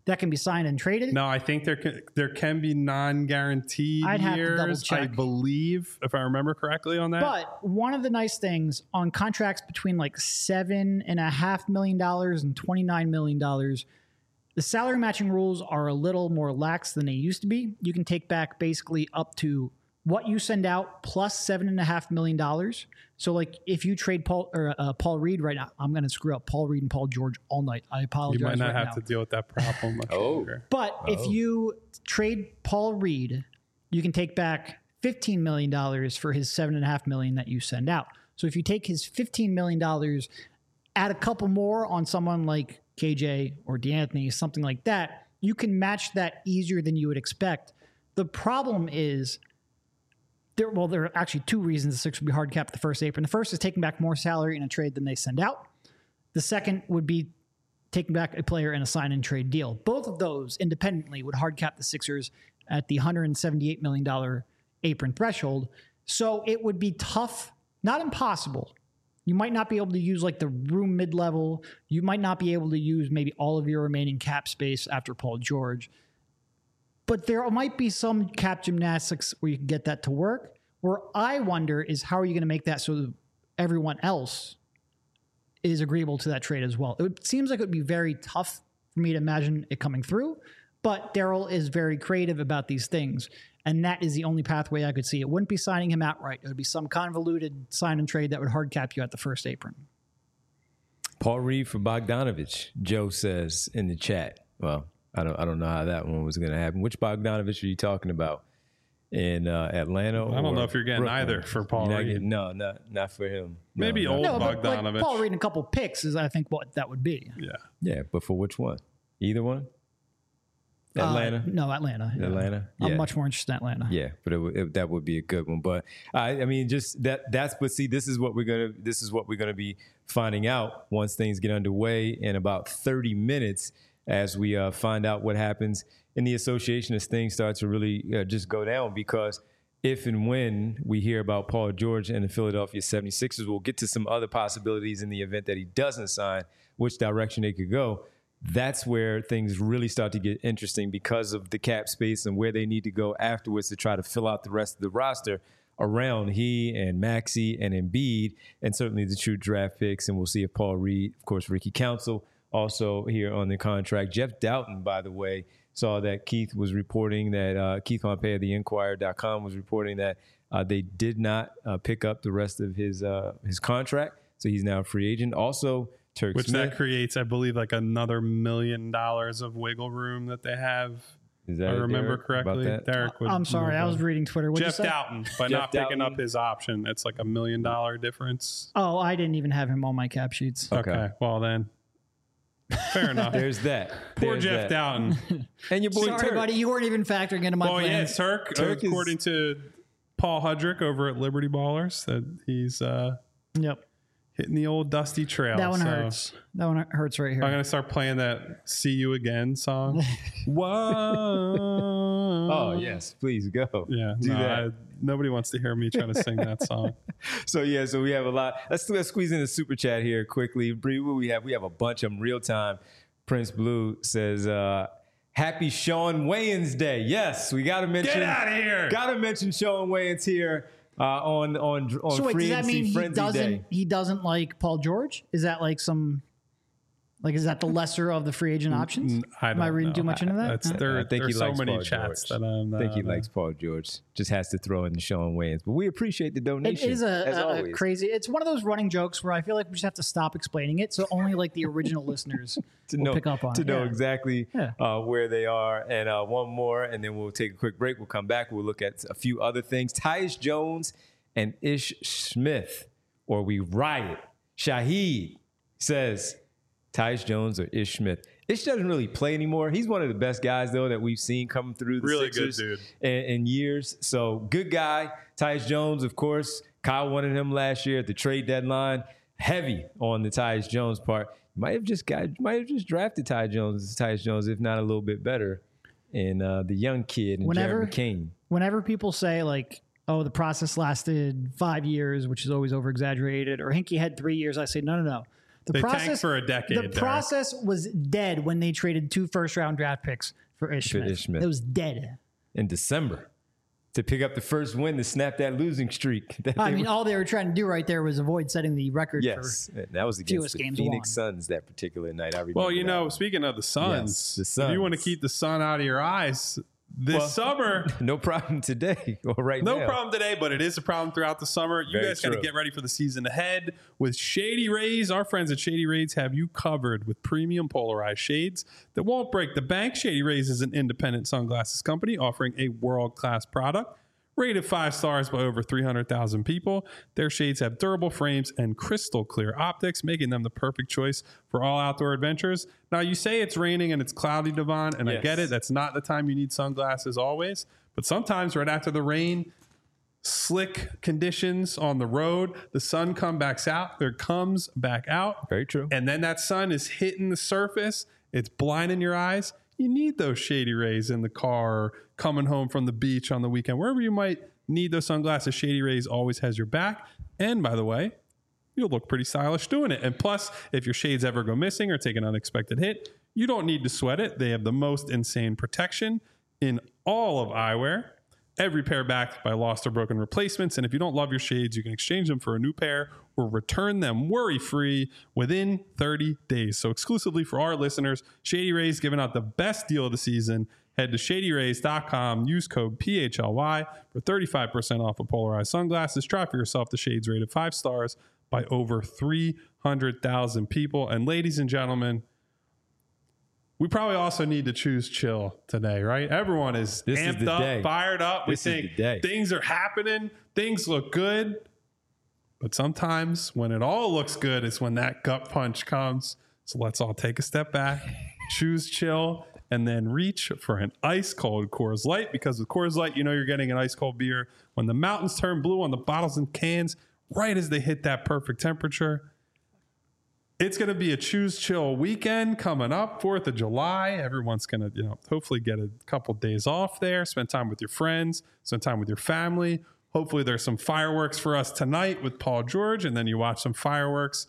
Speaker 3: that can be signed and traded.
Speaker 2: No, I think there can there can be non-guaranteed
Speaker 3: I'd have to
Speaker 2: years.
Speaker 3: double check.
Speaker 2: I believe, if I remember correctly on that.
Speaker 3: But one of the nice things on contracts between like seven and a half million dollars and twenty-nine million dollars, the salary matching rules are a little more lax than they used to be. You can take back basically up to what you send out plus seven and a half million dollars. So, like, if you trade Paul or uh, Paul Reed right now, I'm going to screw up Paul Reed and Paul George all night. I apologize.
Speaker 2: you might not
Speaker 3: right
Speaker 2: have
Speaker 3: now.
Speaker 2: to deal with that problem much
Speaker 1: Oh.
Speaker 2: longer.
Speaker 3: But if you trade Paul Reed, you can take back fifteen million dollars for his seven and a half million that you send out. So if you take his fifteen million dollars, add a couple more on someone like K J or DeAnthony, something like that, you can match that easier than you would expect. The problem is, there, well, there are actually two reasons the Sixers would be hard capped the first apron. The first is taking back more salary in a trade than they send out. The second would be taking back a player in a sign and trade deal. Both of those independently would hard cap the Sixers at the one hundred seventy-eight million dollars apron threshold. So it would be tough, not impossible. You might not be able to use like the room mid-level. You might not be able to use maybe all of your remaining cap space after Paul George. But there might be some cap gymnastics where you can get that to work. Where I wonder is how are you going to make that so that everyone else is agreeable to that trade as well? It seems like it would be very tough for me to imagine it coming through, but Daryl is very creative about these things, and that is the only pathway I could see. It wouldn't be signing him outright. It would be some convoluted sign and trade that would hard cap you at the first apron.
Speaker 1: Paul Reed for Bogdanovich, Joe says in the chat. Well, I don't I don't know how that one was going to happen. Which Bogdanovich are you talking about? In uh, Atlanta?
Speaker 2: I don't
Speaker 1: or
Speaker 2: know if you're getting
Speaker 1: Brooklyn?
Speaker 2: either for Paul
Speaker 1: You're not
Speaker 2: Reed.
Speaker 1: getting- no, not not for him. No,
Speaker 2: Maybe
Speaker 1: not-
Speaker 2: old
Speaker 3: No, but like
Speaker 2: Bogdanovich.
Speaker 3: Paul Reed and a couple picks is, I think, what that would be.
Speaker 2: Yeah.
Speaker 1: Yeah, but for which one? Either one?
Speaker 3: Uh,
Speaker 1: Atlanta?
Speaker 3: no, Atlanta. yeah.
Speaker 1: Atlanta?
Speaker 3: I'm
Speaker 1: Yeah.
Speaker 3: much more interested in Atlanta.
Speaker 1: Yeah, but it, would- it, that would be a good one. But I, I mean, just that. That's. But see, this is what we're gonna. This is what we're gonna be finding out once things get underway in about thirty minutes, as we uh, find out what happens in the association as things start to really uh, just go down. Because if and when we hear about Paul George and the Philadelphia seventy-sixers, we'll get to some other possibilities in the event that he doesn't sign, which direction they could go. That's where things really start to get interesting because of the cap space and where they need to go afterwards to try to fill out the rest of the roster around he and Maxey and Embiid, and certainly the true draft picks. And we'll see if Paul Reed, of course, Ricky Council, also here on the contract. Jeff Doughton, by the way, saw that Keith was reporting that uh, Keith Pompey of the Inquirer dot com was reporting that uh, they did not uh, pick up the rest of his uh, his contract, so he's now a free agent. Also, Turk
Speaker 2: Which
Speaker 1: Smith.
Speaker 2: that creates, I believe, like another million dollars of wiggle room that they have.
Speaker 1: Is
Speaker 2: If
Speaker 1: that
Speaker 2: I
Speaker 1: it,
Speaker 2: remember
Speaker 1: Derek, about
Speaker 2: correctly.
Speaker 1: that?
Speaker 2: Derek would
Speaker 3: I'm sorry,
Speaker 2: know
Speaker 3: I was
Speaker 2: better.
Speaker 3: reading Twitter. What'd
Speaker 2: Jeff
Speaker 3: you say?
Speaker 2: Doughton, by
Speaker 1: Jeff
Speaker 2: not picking
Speaker 1: Doughton.
Speaker 2: up his option, it's like a million dollar difference.
Speaker 3: Oh, I didn't even have him on my cap sheets.
Speaker 1: Okay.
Speaker 2: Okay, well then, fair enough.
Speaker 1: There's that.
Speaker 2: Poor
Speaker 1: There's
Speaker 2: Jeff
Speaker 1: that.
Speaker 2: Doughton.
Speaker 1: And your boy
Speaker 3: Sorry,
Speaker 1: Turk.
Speaker 3: buddy, you weren't even factoring into my
Speaker 2: Well, yeah,
Speaker 3: plans.
Speaker 2: Turk,
Speaker 1: Turk is-
Speaker 2: according to Paul Hudrick over at Liberty Ballers, that he's uh,
Speaker 3: Yep,
Speaker 2: hitting the old dusty trail.
Speaker 3: that one
Speaker 2: so
Speaker 3: hurts. That one hurts right here.
Speaker 2: I'm gonna start playing that "See You Again" song. Whoa!
Speaker 1: Oh, yes. Please go.
Speaker 2: Yeah,
Speaker 1: Do
Speaker 2: no,
Speaker 1: that.
Speaker 2: I- nobody wants to hear me trying to sing that song.
Speaker 1: So, yeah, so we have a lot. Let's, let's squeeze in the super chat here quickly. Bree, what we have? We have a bunch of them real time. Prince Blue says, uh, happy Sean Wayans Day. Yes, we got to mention.
Speaker 2: Get out of here!
Speaker 1: Got to mention Sean Wayans here uh, on, on, on
Speaker 3: so wait,
Speaker 1: Free
Speaker 3: does that
Speaker 1: Agency
Speaker 3: mean he
Speaker 1: Frenzy
Speaker 3: doesn't?
Speaker 1: Day.
Speaker 3: He doesn't like Paul George? Is that like some? Like, is that the lesser of the free agent options?
Speaker 2: I don't
Speaker 3: Am I reading
Speaker 2: know.
Speaker 3: too much into that?
Speaker 2: That's,
Speaker 3: Uh,
Speaker 2: there,
Speaker 1: I think he
Speaker 2: there's so
Speaker 1: likes
Speaker 2: many
Speaker 1: Paul
Speaker 2: chats
Speaker 1: George.
Speaker 2: that I'm.
Speaker 1: I think he
Speaker 2: uh,
Speaker 1: likes Paul George. Just has to throw in the Sean Wayans. But we appreciate the donation.
Speaker 3: It is a,
Speaker 1: as
Speaker 3: a- a
Speaker 1: always.
Speaker 3: crazy. It's one of those running jokes where I feel like we just have to stop explaining it, so only like the original listeners
Speaker 1: to
Speaker 3: will
Speaker 1: know,
Speaker 3: pick up on
Speaker 1: to
Speaker 3: it.
Speaker 1: know
Speaker 3: Yeah.
Speaker 1: exactly
Speaker 3: Yeah.
Speaker 1: uh, where they are. And uh, one more, and then we'll take a quick break. We'll come back. We'll look at a few other things. Tyus Jones and Ish Smith, or we riot. Shaheed says Tyus Jones or Ish Smith. Ish doesn't really play anymore. He's one of the best guys, though, that we've seen coming through the
Speaker 2: Really good
Speaker 1: Sixers
Speaker 2: dude.
Speaker 1: In, in years. So good guy. Tyus Jones, of course. Kyle wanted him last year at the trade deadline. Heavy on the Tyus Jones part. Might have just got, might have just drafted Tyus Jones, Tyus Jones, if not a little bit better. And uh, the young kid and
Speaker 3: Whenever-
Speaker 1: Jared McCain.
Speaker 3: Whenever people say like, "Oh, the process lasted five years," which is always over exaggerated, or Hinkie had three years, I say, no, no, no. The
Speaker 2: They
Speaker 3: process
Speaker 2: tanked for a decade,
Speaker 3: The
Speaker 2: Derek.
Speaker 3: process was dead when they traded two first round draft picks for Ish
Speaker 1: For
Speaker 3: Smith.
Speaker 1: Ish Smith.
Speaker 3: It was dead.
Speaker 1: In December to pick up the first win to snap that losing streak. That
Speaker 3: I
Speaker 1: they
Speaker 3: mean,
Speaker 1: were-
Speaker 3: all they were trying to do right there was avoid setting the record
Speaker 1: yes, and that was against
Speaker 3: fewest
Speaker 1: the
Speaker 3: games
Speaker 1: Phoenix
Speaker 3: won.
Speaker 1: Suns that particular night. I remember.
Speaker 2: Well, you
Speaker 1: that.
Speaker 2: know, speaking of the Suns,
Speaker 1: Yes, the
Speaker 2: if you want to
Speaker 1: Suns.
Speaker 2: keep the sun out of your eyes this
Speaker 1: Well,
Speaker 2: summer,
Speaker 1: no problem today or right
Speaker 2: no
Speaker 1: now.
Speaker 2: problem today, but it is a problem throughout the summer. You
Speaker 1: Very
Speaker 2: guys got to
Speaker 1: true.
Speaker 2: get ready for the season ahead with Shady Rays. Our friends at Shady Rays have you covered with premium polarized shades that won't break the bank. Shady Rays is an independent sunglasses company offering a world-class product. Rated five stars by over three hundred thousand people. Their shades have durable frames and crystal clear optics, making them the perfect choice for all outdoor adventures. Now, you say it's raining and it's cloudy, Devon, and I
Speaker 1: Yes.
Speaker 2: get it. That's not the time you need sunglasses always. But sometimes right after the rain, slick conditions on the road, the sun comes back out, there comes back out.
Speaker 1: Very true.
Speaker 2: And then that sun is hitting the surface. It's blinding your eyes. You need those Shady Rays in the car or coming home from the beach on the weekend. Wherever you might need those sunglasses, Shady Rays always has your back. And by the way, you'll look pretty stylish doing it. And plus, if your shades ever go missing or take an unexpected hit, you don't need to sweat it. They have the most insane protection in all of eyewear. Every pair backed by lost or broken replacements. And if you don't love your shades, you can exchange them for a new pair or return them worry-free within thirty days. So exclusively for our listeners, Shady Rays giving out the best deal of the season. Head to shady rays dot com, use code P H L Y for thirty-five percent off of polarized sunglasses. Try for yourself the shades rated five stars by over three hundred thousand people. And ladies and gentlemen, we probably also need to choose chill today, right? Everyone is
Speaker 1: This is
Speaker 2: amped
Speaker 1: the
Speaker 2: up,
Speaker 1: day.
Speaker 2: fired up.
Speaker 1: This
Speaker 2: we
Speaker 1: is
Speaker 2: think
Speaker 1: the day.
Speaker 2: things are happening. Things look good. But sometimes when it all looks good, it's when that gut punch comes. So let's all take a step back, choose chill, and then reach for an ice cold Coors Light. Because with Coors Light, you know you're getting an ice cold beer when the mountains turn blue on the bottles and cans, right as they hit that perfect temperature. It's going to be a choose chill weekend coming up, fourth of July. Everyone's going to, you know, hopefully get a couple days off there, spend time with your friends, spend time with your family. Hopefully there's some fireworks for us tonight with Paul George, and then you watch some fireworks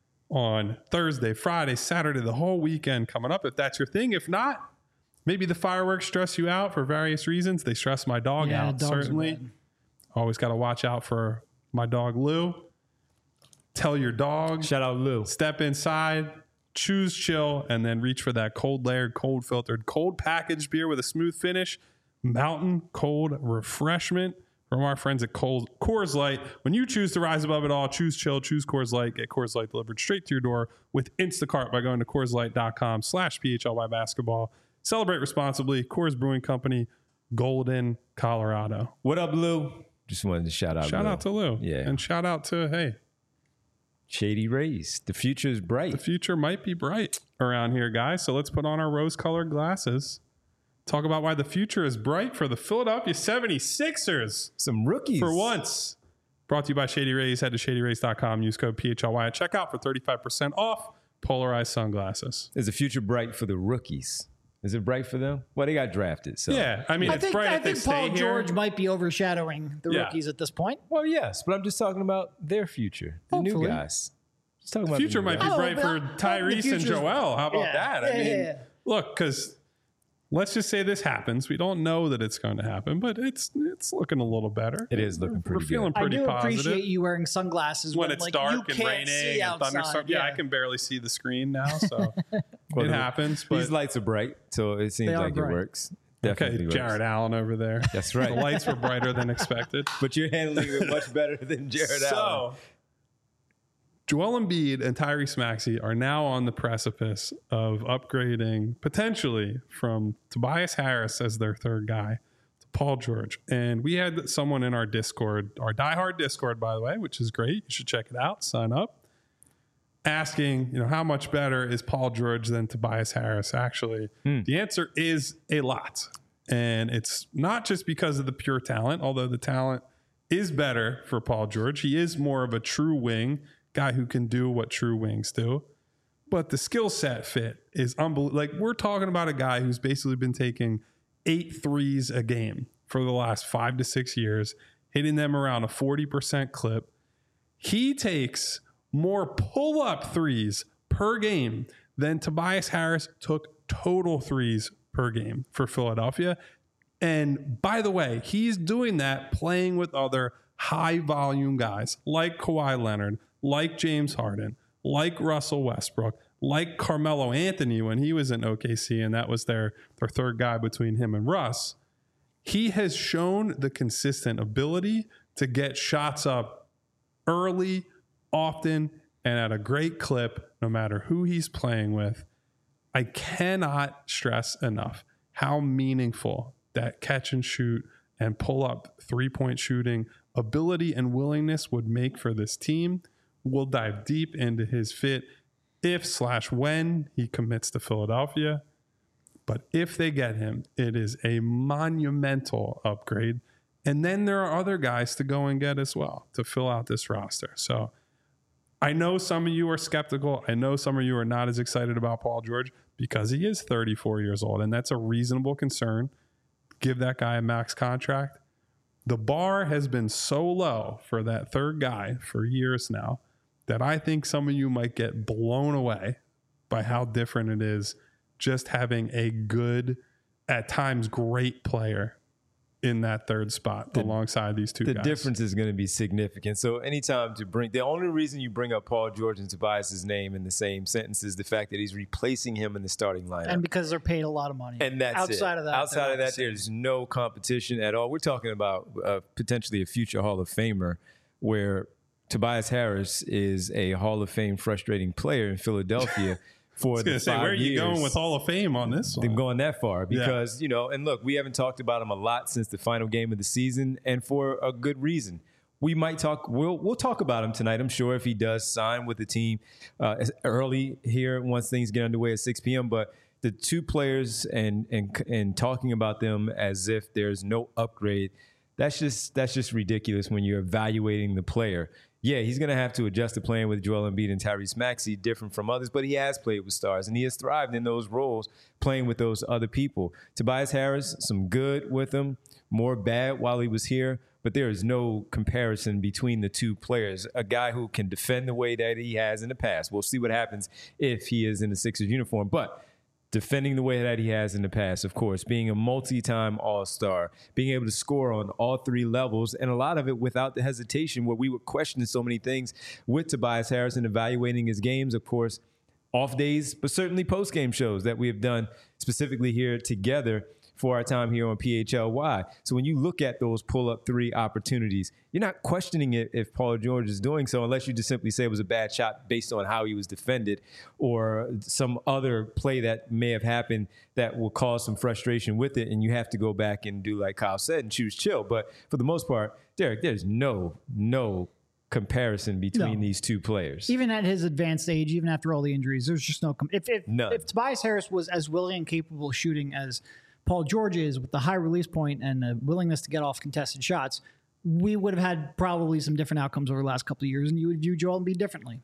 Speaker 2: on Thursday, Friday, Saturday, the whole weekend coming up, if that's your thing. If not, maybe the fireworks stress you out for various reasons. They stress my dog
Speaker 3: Yeah,
Speaker 2: out,
Speaker 3: dogs are
Speaker 2: certainly.
Speaker 3: bad.
Speaker 2: Always got to watch out for my dog, Lou. Tell your dog.
Speaker 1: Shout out Lou.
Speaker 2: Step inside, choose chill, and then reach for that cold layered, cold filtered, cold packaged beer with a smooth finish. Mountain cold refreshment from our friends at Cold, Coors Light. When you choose to rise above it all, choose chill, choose Coors Light. Get Coors Light delivered straight to your door with Instacart by going to Coors Light dot com slash P H L Y basketball. Celebrate responsibly. Coors Brewing Company, Golden, Colorado.
Speaker 1: What up, Lou? Just wanted to shout out.
Speaker 2: Shout
Speaker 1: Lou.
Speaker 2: out to Lou.
Speaker 1: Yeah.
Speaker 2: And shout out to, hey,
Speaker 1: Shady Rays. The future is bright.
Speaker 2: the future might be bright around here, guys. So let's put on our rose-colored glasses. Talk about why the future is bright for the Philadelphia seventy-sixers
Speaker 1: Some rookies
Speaker 2: for once. Brought to you by Shady Rays. Head to shady rays dot com. Use code P H L Y at checkout for thirty-five percent off polarized sunglasses.
Speaker 1: Is the future bright for the rookies? Is it bright for them? Well, they got drafted. So
Speaker 2: Yeah, I mean,
Speaker 3: I
Speaker 2: it's
Speaker 3: think,
Speaker 2: bright
Speaker 3: I
Speaker 2: if they
Speaker 3: think
Speaker 2: stay
Speaker 3: Paul
Speaker 2: here.
Speaker 3: George might be overshadowing the
Speaker 2: Yeah.
Speaker 3: rookies at this point.
Speaker 1: Well, yes, but I'm just talking about their future, the new
Speaker 3: Hopefully.
Speaker 1: guys. Just talking
Speaker 2: The
Speaker 1: about
Speaker 2: future
Speaker 1: new
Speaker 2: might be
Speaker 1: guys.
Speaker 3: Oh,
Speaker 2: bright
Speaker 3: but
Speaker 2: for
Speaker 3: I- the
Speaker 2: Tyrese and
Speaker 3: future's-
Speaker 2: Joel. How about
Speaker 3: Yeah,
Speaker 2: that? I
Speaker 3: yeah,
Speaker 2: mean,
Speaker 3: yeah, yeah.
Speaker 2: look, because let's just say this happens. We don't know that it's going to happen, but it's it's looking a little better.
Speaker 1: It is looking
Speaker 2: We're
Speaker 1: pretty
Speaker 2: feeling
Speaker 1: good.
Speaker 3: I
Speaker 2: pretty
Speaker 3: do
Speaker 2: positive.
Speaker 3: appreciate you wearing sunglasses
Speaker 2: when
Speaker 3: when,
Speaker 2: it's
Speaker 3: like,
Speaker 2: dark
Speaker 3: you
Speaker 2: and
Speaker 3: can't
Speaker 2: raining
Speaker 3: see
Speaker 2: and
Speaker 3: outside.
Speaker 2: thunderstorm. Yeah, I can barely see the screen now, so
Speaker 1: Well,
Speaker 2: it
Speaker 1: the-
Speaker 2: happens. But
Speaker 1: These lights are bright, so it seems
Speaker 3: They are
Speaker 1: like
Speaker 3: bright.
Speaker 1: it works.
Speaker 2: okay,
Speaker 1: Definitely works.
Speaker 2: Jared Allen over there.
Speaker 1: That's right.
Speaker 2: The lights were brighter than expected.
Speaker 1: But you're handling it much better than Jared Allen.
Speaker 2: So, Joel Embiid and Tyrese Maxey are now on the precipice of upgrading potentially from Tobias Harris as their third guy to Paul George. And we had someone in our Discord, our diehard Discord, by the way, which is great. You should check it out. Sign up. Asking, you know, how much better is Paul George than Tobias Harris? Actually, the answer is a lot. And it's not just because of the pure talent, although the talent is better for Paul George. He is more of a true wing, guy who can do what true wings do. But the skill set fit is unbelievable. Like, we're talking about a guy who's basically been taking eight threes a game for the last five to six years, hitting them around a forty percent clip. He takes more pull-up threes per game than Tobias Harris took total threes per game for Philadelphia. And by the way, he's doing that playing with other high volume guys like Kawhi Leonard, like James Harden, like Russell Westbrook, like Carmelo Anthony when he was in O K C, and that was their, their third guy between him and Russ. He has shown the consistent ability to get shots up early, often, and at a great clip, no matter who he's playing with. I cannot stress enough how meaningful that catch and shoot and pull up three-point shooting ability and willingness would make for this team. We'll dive deep into his fit if slash when he commits to Philadelphia. But if they get him, it is a monumental upgrade. And then there are other guys to go and get as well to fill out this roster. So I know some of you are skeptical. I know some of you are not as excited about Paul George because he is thirty-four years old, and that's a reasonable concern. Give that guy a max contract. The bar has been so low for that third guy for years now that I think some of you might get blown away by how different it is just having a good, at times great player in that third spot the, alongside these two
Speaker 1: the
Speaker 2: guys.
Speaker 1: The difference is going to be significant. So anytime to bring, the only reason you bring up Paul George and Tobias's name in the same sentence is the fact that he's replacing him in the starting lineup.
Speaker 3: And because they're paid a lot of money.
Speaker 1: And that's
Speaker 3: outside
Speaker 1: it.
Speaker 3: of that.
Speaker 1: Outside of that, there's no competition at all. We're talking about uh, potentially a future Hall of Famer where Tobias Harris is a Hall of Fame frustrating player in Philadelphia. For
Speaker 2: I was going to say, where are you
Speaker 1: years.
Speaker 2: going with Hall of Fame on this one?
Speaker 1: Them going that far because, yeah. you know, and look, we haven't talked about him a lot since the final game of the season, and for a good reason. We might talk, we'll we'll talk about him tonight, I'm sure, if he does sign with the team uh, early here once things get underway at six p.m. But the two players and and and talking about them as if there's no upgrade, that's just that's just ridiculous when you're evaluating the player. Yeah, he's going to have to adjust to playing with Joel Embiid and Tyrese Maxey, different from others, but he has played with stars, and he has thrived in those roles, playing with those other people. Tobias Harris, some good with him, more bad while he was here, but there is no comparison between the two players. A guy who can defend the way that he has in the past. We'll see what happens if he is in the Sixers uniform, but defending the way that he has in the past, of course, being a multi-time all-star, being able to score on all three levels, and a lot of it without the hesitation where we were questioning so many things with Tobias Harris and evaluating his games, of course, off days, but certainly post-game shows that we have done specifically here together for our time here on P H L Y. So when you look at those pull-up three opportunities, you're not questioning it if Paul George is doing so unless you just simply say it was a bad shot based on how he was defended or some other play that may have happened that will cause some frustration with it, and you have to go back and do like Kyle said and choose chill. But for the most part, Derek, there's no, no comparison between no. these two players.
Speaker 3: Even at his advanced age, even after all the injuries, there's just no com- if if, if Tobias Harris was as willing and capable of shooting as Paul George is with the high release point and the willingness to get off contested shots, we would have had probably some different outcomes over the last couple of years, and you would view Joel Embiid differently.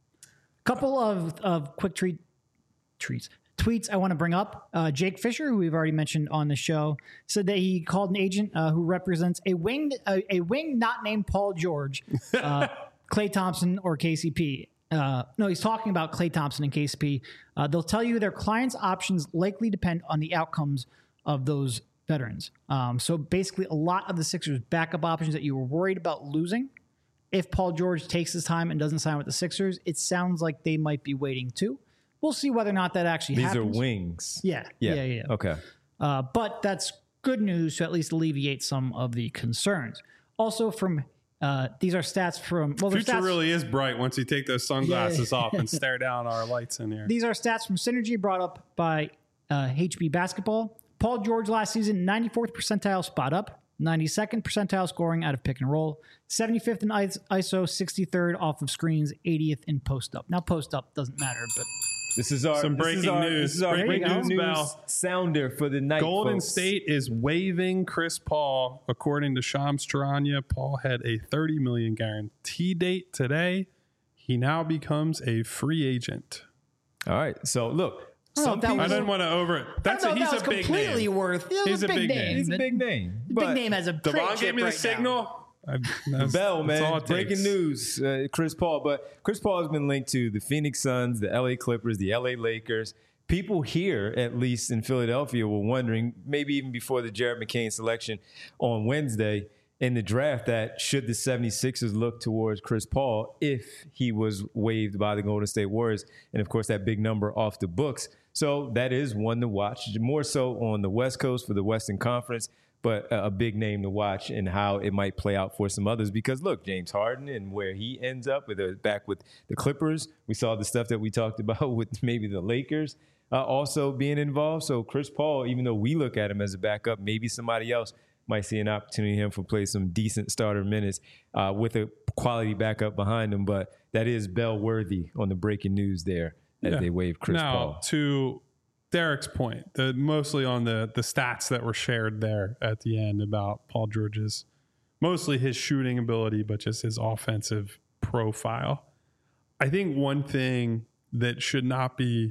Speaker 3: Couple of, of quick treat, treats, tweets I want to bring up. Uh, Jake Fisher, who we've already mentioned on the show, said that he called an agent uh, who represents a wing, a, a wing not named Paul George, uh, Klay Thompson, or K C P. Uh, no, he's talking about Klay Thompson and K C P. Uh, they'll tell you their clients' options likely depend on the outcomes of those veterans. Um, so basically, a lot of the Sixers' backup options that you were worried about losing, if Paul George takes his time and doesn't sign with the Sixers, it sounds like they might be waiting too. We'll see whether or not that actually
Speaker 1: These
Speaker 3: happens.
Speaker 1: These are wings.
Speaker 3: Yeah, yeah, yeah. yeah.
Speaker 1: Okay.
Speaker 3: Uh, but that's good news to at least alleviate some of the concerns. Also from, uh, these are stats from... well,
Speaker 2: Future
Speaker 3: stats,
Speaker 2: really is bright once you take those sunglasses yeah. off and stare down our lights in here.
Speaker 3: These are stats from Synergy brought up by uh, H B Basketball. Paul George last season, ninety-fourth percentile spot up, ninety-second percentile scoring out of pick and roll, seventy-fifth in I S O, sixty-third off of screens, eightieth in post up. Now post up doesn't matter, but
Speaker 1: this is our
Speaker 2: some breaking
Speaker 1: this is our,
Speaker 2: news.
Speaker 1: This is our
Speaker 2: breaking
Speaker 1: breaking news
Speaker 2: bell.
Speaker 1: sounder for the night.
Speaker 2: Golden
Speaker 1: folks.
Speaker 2: State is waiving Chris Paul, according to Shams Charania. Paul had a thirty million dollars guarantee date today. He now becomes a free agent.
Speaker 1: All right. So look.
Speaker 3: Some people,
Speaker 2: I didn't want to over. That's a, he's
Speaker 3: that
Speaker 2: a big
Speaker 3: completely
Speaker 2: name.
Speaker 3: Worth.
Speaker 2: He's a big, big name.
Speaker 1: He's a big name.
Speaker 3: Big name as a
Speaker 2: Devon gave me the
Speaker 3: right
Speaker 2: signal.
Speaker 3: Now.
Speaker 2: I, that's,
Speaker 1: Bell,
Speaker 2: that's all
Speaker 1: man.
Speaker 2: it
Speaker 1: Breaking
Speaker 2: takes.
Speaker 1: news. Uh, Chris Paul. But Chris Paul has been linked to the Phoenix Suns, the L A Clippers, the L A Lakers. People here, at least in Philadelphia, were wondering, maybe even before the Jared McCain selection on Wednesday in the draft, that should the 76ers look towards Chris Paul if he was waived by the Golden State Warriors. And, of course, that big number off the books. So that is one to watch, more so on the West Coast for the Western Conference, but a big name to watch and how it might play out for some others. Because, look, James Harden and where he ends up with a, back with the Clippers. We saw the stuff that we talked about with maybe the Lakers uh, also being involved. So Chris Paul, even though we look at him as a backup, maybe somebody else might see an opportunity for him to play some decent starter minutes uh, with a quality backup behind him. But that is Bell worthy on the breaking news there as
Speaker 2: Yeah.
Speaker 1: they waive Chris
Speaker 2: now,
Speaker 1: Paul.
Speaker 2: To Derek's point, the, mostly on the the stats that were shared there at the end about Paul George's, mostly his shooting ability, but just his offensive profile. I think one thing that should not be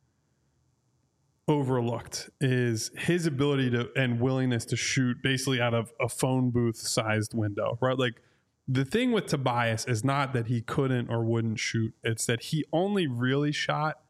Speaker 2: overlooked is his ability to and willingness to shoot basically out of a phone booth sized window, right? Like the thing with Tobias is not that he couldn't or wouldn't shoot. It's that he only really shot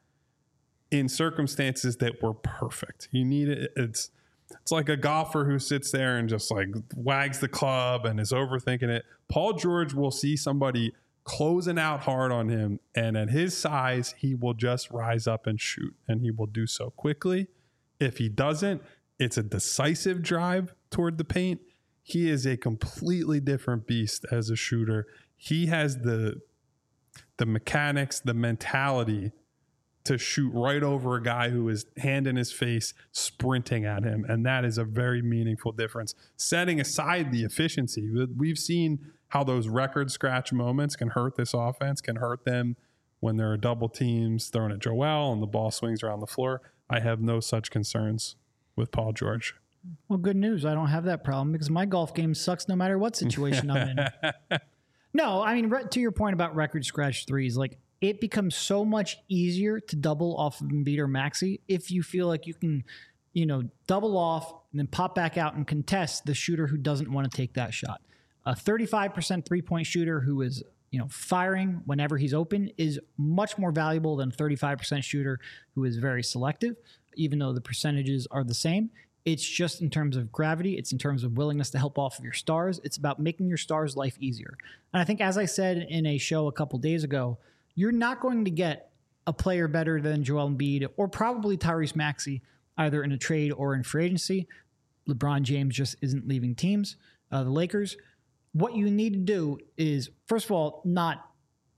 Speaker 2: in circumstances that were perfect. He needed it's it's like a golfer who sits there and just like wags the club and is overthinking it. Paul George will see somebody closing out hard on him, and at his size, he will just rise up and shoot, and he will do so quickly. If he doesn't, it's a decisive drive toward the paint. He is a completely different beast as a shooter. He has the the mechanics, the mentality to shoot right over a guy who is hand in his face sprinting at him, and that is a very meaningful difference. Setting aside the efficiency, we've seen how those record scratch moments can hurt this offense, can hurt them when there are double teams thrown at Joel and the ball swings around the floor. I have no such concerns with Paul George.
Speaker 3: Well, good news. I don't have that problem because my golf game sucks no matter what situation I'm in. No, I mean, to your point about record scratch threes, like it becomes so much easier to double off of Embiid or Maxey if you feel like you can, you know, double off and then pop back out and contest the shooter who doesn't want to take that shot. A thirty-five percent three-point shooter who is, you know, firing whenever he's open is much more valuable than a thirty-five percent shooter who is very selective, even though the percentages are the same. It's just in terms of gravity. It's in terms of willingness to help off of your stars. It's about making your stars' life easier. And I think, as I said in a show a couple days ago, you're not going to get a player better than Joel Embiid or probably Tyrese Maxey, either in a trade or in free agency. LeBron James just isn't leaving teams. Uh, the Lakers, what you need to do is, first of all, not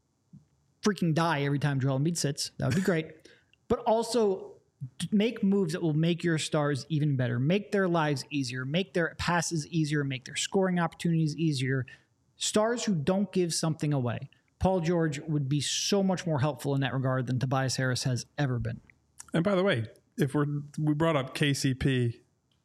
Speaker 3: freaking die every time Joel Embiid sits. That would be great. But also make moves that will make your stars even better, make their lives easier, make their passes easier, make their scoring opportunities easier. Stars who don't give something away. Paul George would be so much more helpful in that regard than Tobias Harris has ever been.
Speaker 2: And by the way, if we're we brought up K C P,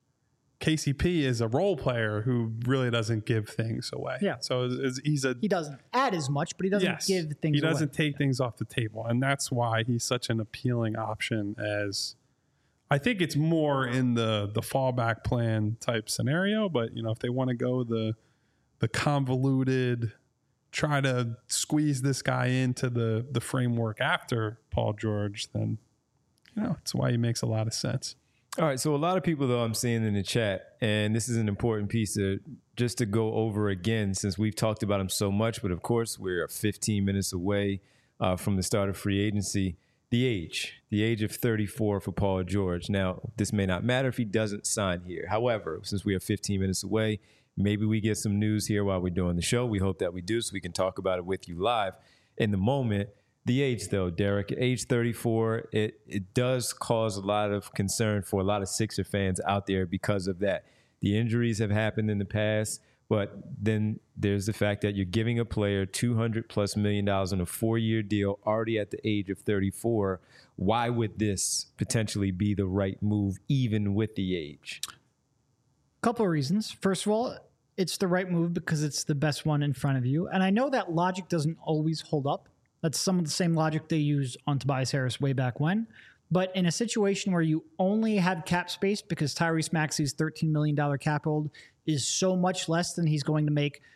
Speaker 2: K C P is a role player who really doesn't give things away.
Speaker 3: Yeah.
Speaker 2: So it's, it's, he's a
Speaker 3: He doesn't add as much, but he doesn't
Speaker 2: yes,
Speaker 3: give things
Speaker 2: he doesn't
Speaker 3: away.
Speaker 2: take things off the table, and that's why he's such an appealing option. As I think it's more in the the fallback plan type scenario, but you know, if they want to go the the convoluted, try to squeeze this guy into the the framework after Paul George, then you know, it's why he makes a lot of sense.
Speaker 1: All right, so a lot of people, though, I'm seeing in the chat, and this is an important piece to just to go over again since we've talked about him so much, but of course we're fifteen minutes away uh, from the start of free agency. The age, the age of thirty-four for Paul George. Now, this may not matter if he doesn't sign here. However, since we are fifteen minutes away, maybe we get some news here while we're doing the show. We hope that we do so we can talk about it with you live in the moment. The age, though, Derek, age thirty-four, it, it does cause a lot of concern for a lot of Sixer fans out there because of that. The injuries have happened in the past, but then there's the fact that you're giving a player two hundred plus million dollars on a four-year deal already at the age of thirty-four. Why would this potentially be the right move, even with the age?
Speaker 3: Couple of reasons. First of all, it's the right move because it's the best one in front of you. And I know that logic doesn't always hold up. That's some of the same logic they used on Tobias Harris way back when. But in a situation where you only have cap space because Tyrese Maxey's thirteen million dollars cap hold is so much less than he's going to make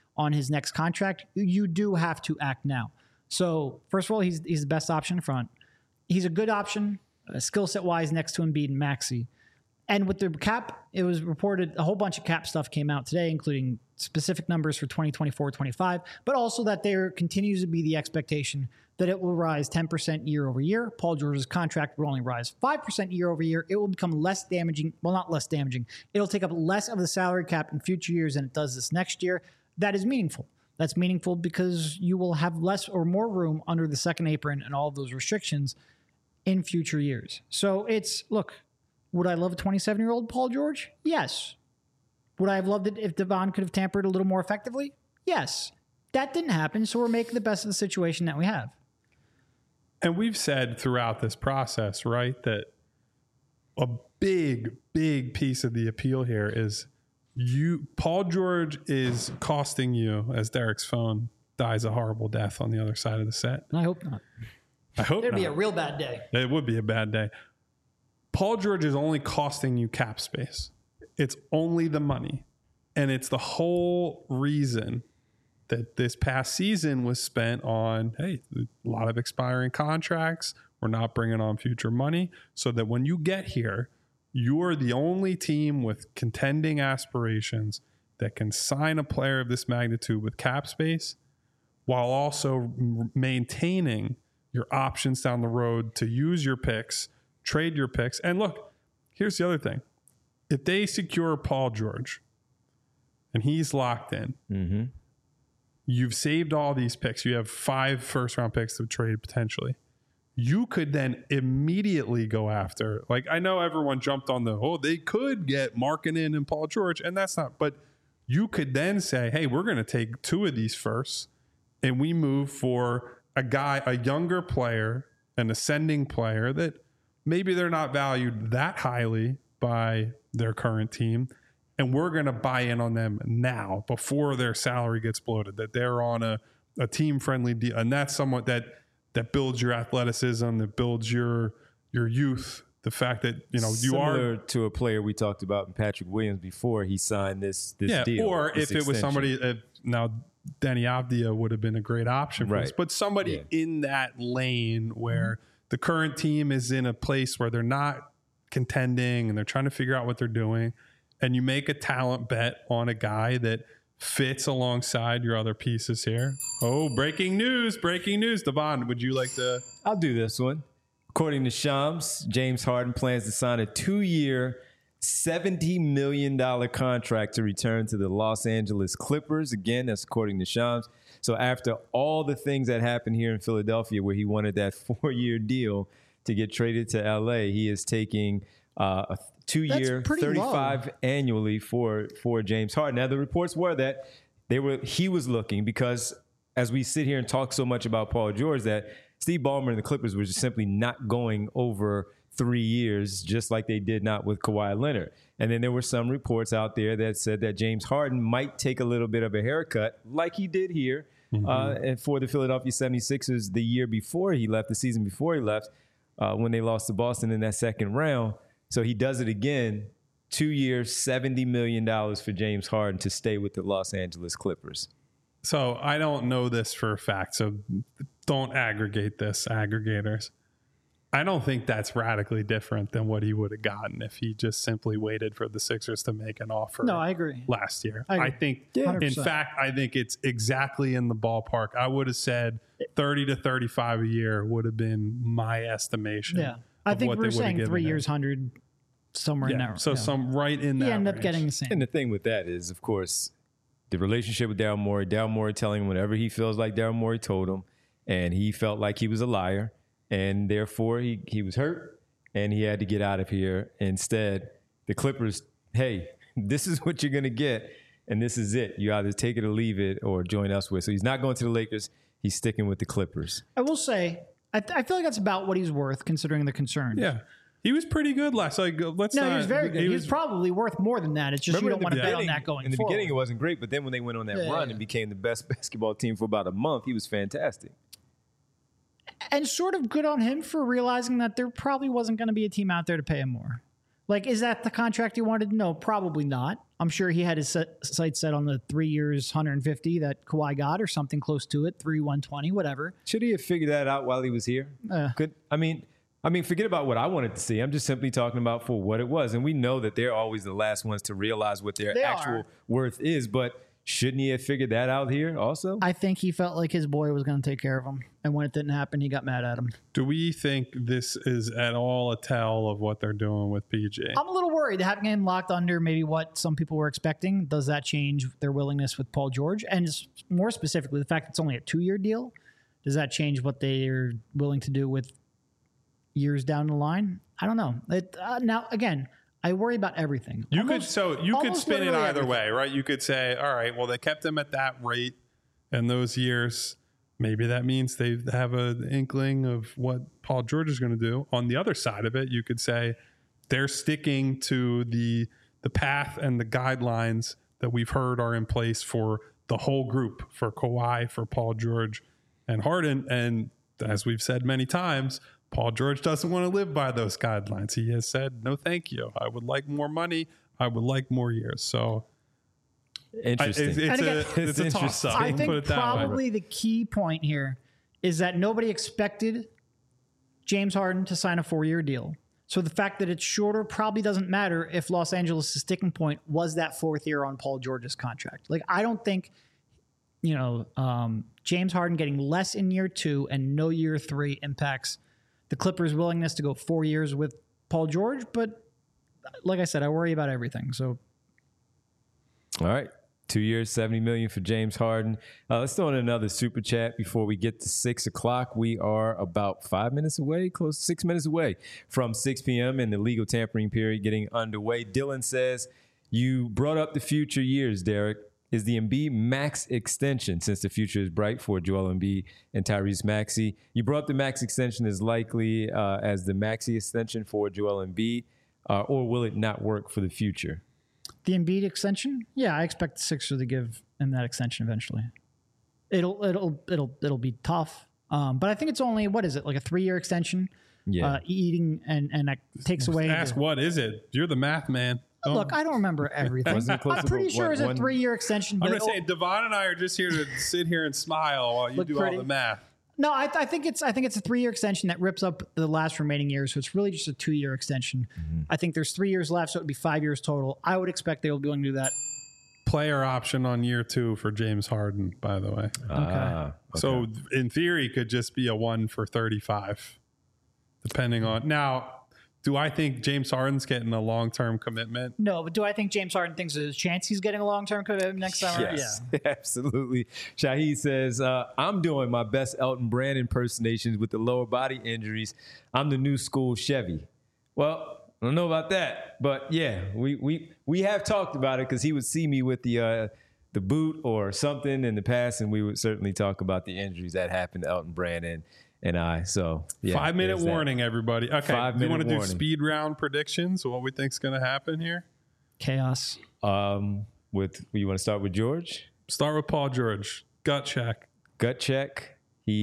Speaker 3: on his next contract, you do have to act now. So first of all, he's he's the best option in front. He's a good option, uh, skill set wise, next to Embiid and Maxey. And with the cap, it was reported a whole bunch of cap stuff came out today, including specific numbers for twenty twenty-four twenty-five, but also that there continues to be the expectation that it will rise ten percent year over year. Paul George's contract will only rise five percent year over year. It will become less damaging. Well, not less damaging. It'll take up less of the salary cap in future years than it does this next year. That is meaningful. That's meaningful because you will have less or more room under the second apron and all of those restrictions in future years. So it's, look, would I love a twenty-seven-year-old Paul George? Yes. Would I have loved it if Devon could have tampered a little more effectively? Yes. That didn't happen, so we're making the best of the situation that we have.
Speaker 2: And we've said throughout this process, right, that a big, big piece of the appeal here is you. Paul George is costing you, as Derek's phone dies a horrible death on the other side of the set.
Speaker 3: I hope not.
Speaker 2: I hope
Speaker 3: It'd
Speaker 2: not.
Speaker 3: be a real bad day.
Speaker 2: It would be a bad day. Paul George is only costing you cap space. It's only the money. And it's the whole reason that this past season was spent on, hey, a lot of expiring contracts. We're not bringing on future money. So that when you get here, you're the only team with contending aspirations that can sign a player of this magnitude with cap space while also maintaining your options down the road to use your picks, trade your picks. And look, here's the other thing. If they secure Paul George and he's locked in,
Speaker 1: Mm-hmm.
Speaker 2: you've saved all these picks. You have five first round picks to trade potentially. You could then immediately go after, like, I know everyone jumped on the, oh, they could get Markkanen and Paul George, and that's not, but you could then say, hey, we're going to take two of these first and we move for a guy, a younger player, an ascending player that maybe they're not valued that highly by their current team. And we're going to buy in on them now before their salary gets bloated, that they're on a, a team-friendly deal. And that's somewhat that that builds your athleticism, that builds your your youth. The fact that, you know, you
Speaker 1: Similar
Speaker 2: are
Speaker 1: to a player we talked about in Patrick Williams before he signed this this
Speaker 2: yeah,
Speaker 1: deal.
Speaker 2: or
Speaker 1: this
Speaker 2: if it was
Speaker 1: extension.
Speaker 2: somebody, uh, now Danny Avdia would have been a great option for
Speaker 1: Right.
Speaker 2: this, but somebody
Speaker 1: Yeah.
Speaker 2: in that lane where the current team is in a place where they're not contending and they're trying to figure out what they're doing, and you make a talent bet on a guy that fits alongside your other pieces here. Oh, breaking news, breaking news. Devon, would you like to?
Speaker 1: I'll do this one. According to Shams, James Harden plans to sign a two-year, seventy million dollars contract to return to the Los Angeles Clippers. Again, that's according to Shams. So after all the things that happened here in Philadelphia where he wanted that four-year deal to get traded to L A, he is taking uh, a two-year,
Speaker 3: That's pretty
Speaker 1: thirty-five
Speaker 3: low.
Speaker 1: annually for, for James Harden. Now, the reports were that they were he was looking because as we sit here and talk so much about Paul George, that Steve Ballmer and the Clippers were just simply not going over three years, just like they did not with Kawhi Leonard. And then there were some reports out there that said that James Harden might take a little bit of a haircut, like he did here, mm-hmm. uh, and for the Philadelphia seventy-sixers the year before he left, the season before he left, uh, when they lost to Boston in that second round. So he does it again, two years, seventy million dollars for James Harden to stay with the Los Angeles Clippers.
Speaker 2: So I don't know this for a fact, so don't aggregate this, aggregators. I don't think that's radically different than what he would have gotten if he just simply waited for the Sixers to make an offer.
Speaker 3: No, I agree.
Speaker 2: Last year.
Speaker 3: I agree.
Speaker 2: I think,
Speaker 3: Yeah.
Speaker 2: in
Speaker 3: one hundred percent.
Speaker 2: fact, I think it's exactly in the ballpark. I would have said thirty to thirty-five a year would have been my estimation.
Speaker 3: Yeah. I
Speaker 2: of
Speaker 3: think
Speaker 2: what
Speaker 3: we
Speaker 2: they
Speaker 3: were
Speaker 2: would have
Speaker 3: saying
Speaker 2: given
Speaker 3: three
Speaker 2: him.
Speaker 3: years, one hundred, somewhere in
Speaker 2: Yeah,
Speaker 3: there.
Speaker 2: so
Speaker 3: yeah.
Speaker 2: some right in that
Speaker 3: He ended up
Speaker 2: range.
Speaker 3: getting the same.
Speaker 1: And the thing with that is, of course, the relationship with Daryl Morey, Daryl Morey telling him whatever he feels like Daryl Morey told him, and he felt like he was a liar, and therefore he, he was hurt, and he had to get out of here. Instead, the Clippers, hey, this is what you're going to get, and this is it. You either take it or leave it or join elsewhere. So he's not going to the Lakers. He's sticking with the Clippers.
Speaker 3: I will say, I, th- I feel like that's about what he's worth considering the concerns.
Speaker 2: Yeah. He was pretty good last. Like, let's
Speaker 3: No,
Speaker 2: not.
Speaker 3: he was very good. He, was, probably worth more than that. It's just you don't
Speaker 1: in the
Speaker 3: want to bet on
Speaker 1: beginning-
Speaker 3: that going
Speaker 1: In the
Speaker 3: forward.
Speaker 1: beginning, it wasn't great, but then when they went on that
Speaker 3: Yeah,
Speaker 1: run
Speaker 3: yeah.
Speaker 1: and became the best basketball team for about a month, he was fantastic.
Speaker 3: And sort of good on him for realizing that there probably wasn't going to be a team out there to pay him more. Like, is that the contract he wanted? No, probably not. I'm sure he had his set, sights set on the three years, one hundred fifty that Kawhi got, or something close to it, three one twenty, whatever.
Speaker 1: Should he have figured that out while he was here?
Speaker 3: Uh,
Speaker 1: Could I mean, I mean, forget about what I wanted to see. I'm just simply talking about for what it was, and we know that they're always the last ones to realize what their
Speaker 3: They
Speaker 1: actual
Speaker 3: are.
Speaker 1: worth is. But shouldn't he have figured that out here also?
Speaker 3: I think he felt like his boy was going to take care of him, and when it didn't happen, he got mad at him.
Speaker 2: Do we think this is at all a tell of what they're doing with P J?
Speaker 3: I'm a little worried having him locked under maybe what some people were expecting. Does that change their willingness with Paul George? And more specifically, the fact that it's only a two-year deal, does that change what they're willing to do with years down the line? I don't know. It, uh, now, again, I worry about everything.
Speaker 2: You
Speaker 3: Almost-
Speaker 2: could so you could
Speaker 3: almost
Speaker 2: spin it
Speaker 3: literally
Speaker 2: either
Speaker 3: everything.
Speaker 2: way, right? You could say, all right, well, they kept him at that rate in those years. Maybe that means they have an inkling of what Paul George is going to do. On the other side of it, you could say they're sticking to the the path and the guidelines that we've heard are in place for the whole group, for Kawhi, for Paul George, and Harden. And as we've said many times, Paul George doesn't want to live by those guidelines. He has said, no, thank you. I would like more money. I would like more years. So I,
Speaker 1: Interesting.
Speaker 2: it's, it's
Speaker 3: And
Speaker 2: a,
Speaker 3: again,
Speaker 2: it's a
Speaker 1: It's
Speaker 2: toss up.
Speaker 3: I
Speaker 2: Put
Speaker 3: think
Speaker 2: it that way.
Speaker 3: probably the key point here is that nobody expected James Harden to sign a four-year deal. So the fact that it's shorter probably doesn't matter if Los Angeles' sticking point was that fourth year on Paul George's contract. Like, I don't think, you know, um, James Harden getting less in year two and no year three impacts the Clippers' willingness to go four years with Paul George. But like I said, I worry about everything. So
Speaker 1: All right. Two years, seventy million dollars for James Harden. Uh, let's throw in another super chat before we get to six o'clock. We are about five minutes away, close to six minutes away from six p.m. and the legal tampering period getting underway. Dylan says, you brought up the future years, Derek. Is the Embiid max extension, since the future is bright for Joel Embiid and Tyrese Maxey? You brought up the max extension as likely uh, as the Maxey extension for Joel Embiid, uh, or will it not work for the future?
Speaker 3: the Embiid extension, yeah, I expect the Sixers to give him that extension eventually. It'll it'll it'll it'll be tough, um, but I think it's only what is it like a three year extension?
Speaker 1: Yeah.
Speaker 3: Uh, eating and and that takes away.
Speaker 2: Ask
Speaker 3: the,
Speaker 2: what is it? You're the math man. Don't-
Speaker 3: look, I don't remember everything.
Speaker 1: Wasn't it close
Speaker 3: I'm
Speaker 1: to
Speaker 3: pretty
Speaker 1: what,
Speaker 3: sure it's a
Speaker 1: one-
Speaker 3: three year extension.
Speaker 2: I'm
Speaker 3: But
Speaker 2: just saying, Devon and I are just here to sit here and smile while you
Speaker 3: Look
Speaker 2: do
Speaker 3: pretty.
Speaker 2: all the math.
Speaker 3: no, I, I think it's I think it's a three year extension that rips up the last remaining years. So it's really just a two year extension.
Speaker 1: Mm-hmm.
Speaker 3: I think there's three years left, so it would be five years total. I would expect they will be going to do that.
Speaker 2: Player option on year two for James Harden, by the way.
Speaker 1: Ah, okay.
Speaker 2: So in theory, could just be a one for thirty-five, depending on. Now, do I think James Harden's getting a long-term commitment?
Speaker 3: No, but do I think James Harden thinks there's a chance he's getting a long term commitment next summer?
Speaker 1: Yes, absolutely. Shahid says, uh, I'm doing my best Elton Brand impersonations with the lower body injuries. I'm the new school Chevy. Well, I don't know about that, but yeah, we we we have talked about it because he would see me with the uh, the boot or something in the past, and we would certainly talk about the injuries that happened to Elton Brand and, and I. So yeah,
Speaker 2: Five minute
Speaker 1: there's that.
Speaker 2: warning, everybody. Okay,
Speaker 1: Five
Speaker 2: do you
Speaker 1: minute
Speaker 2: want to do
Speaker 1: warning.
Speaker 2: speed round predictions? What we think's going to happen here?
Speaker 3: Chaos.
Speaker 1: Um, with you want to start with George?
Speaker 2: Start with Paul George. Gut check.
Speaker 1: Gut check.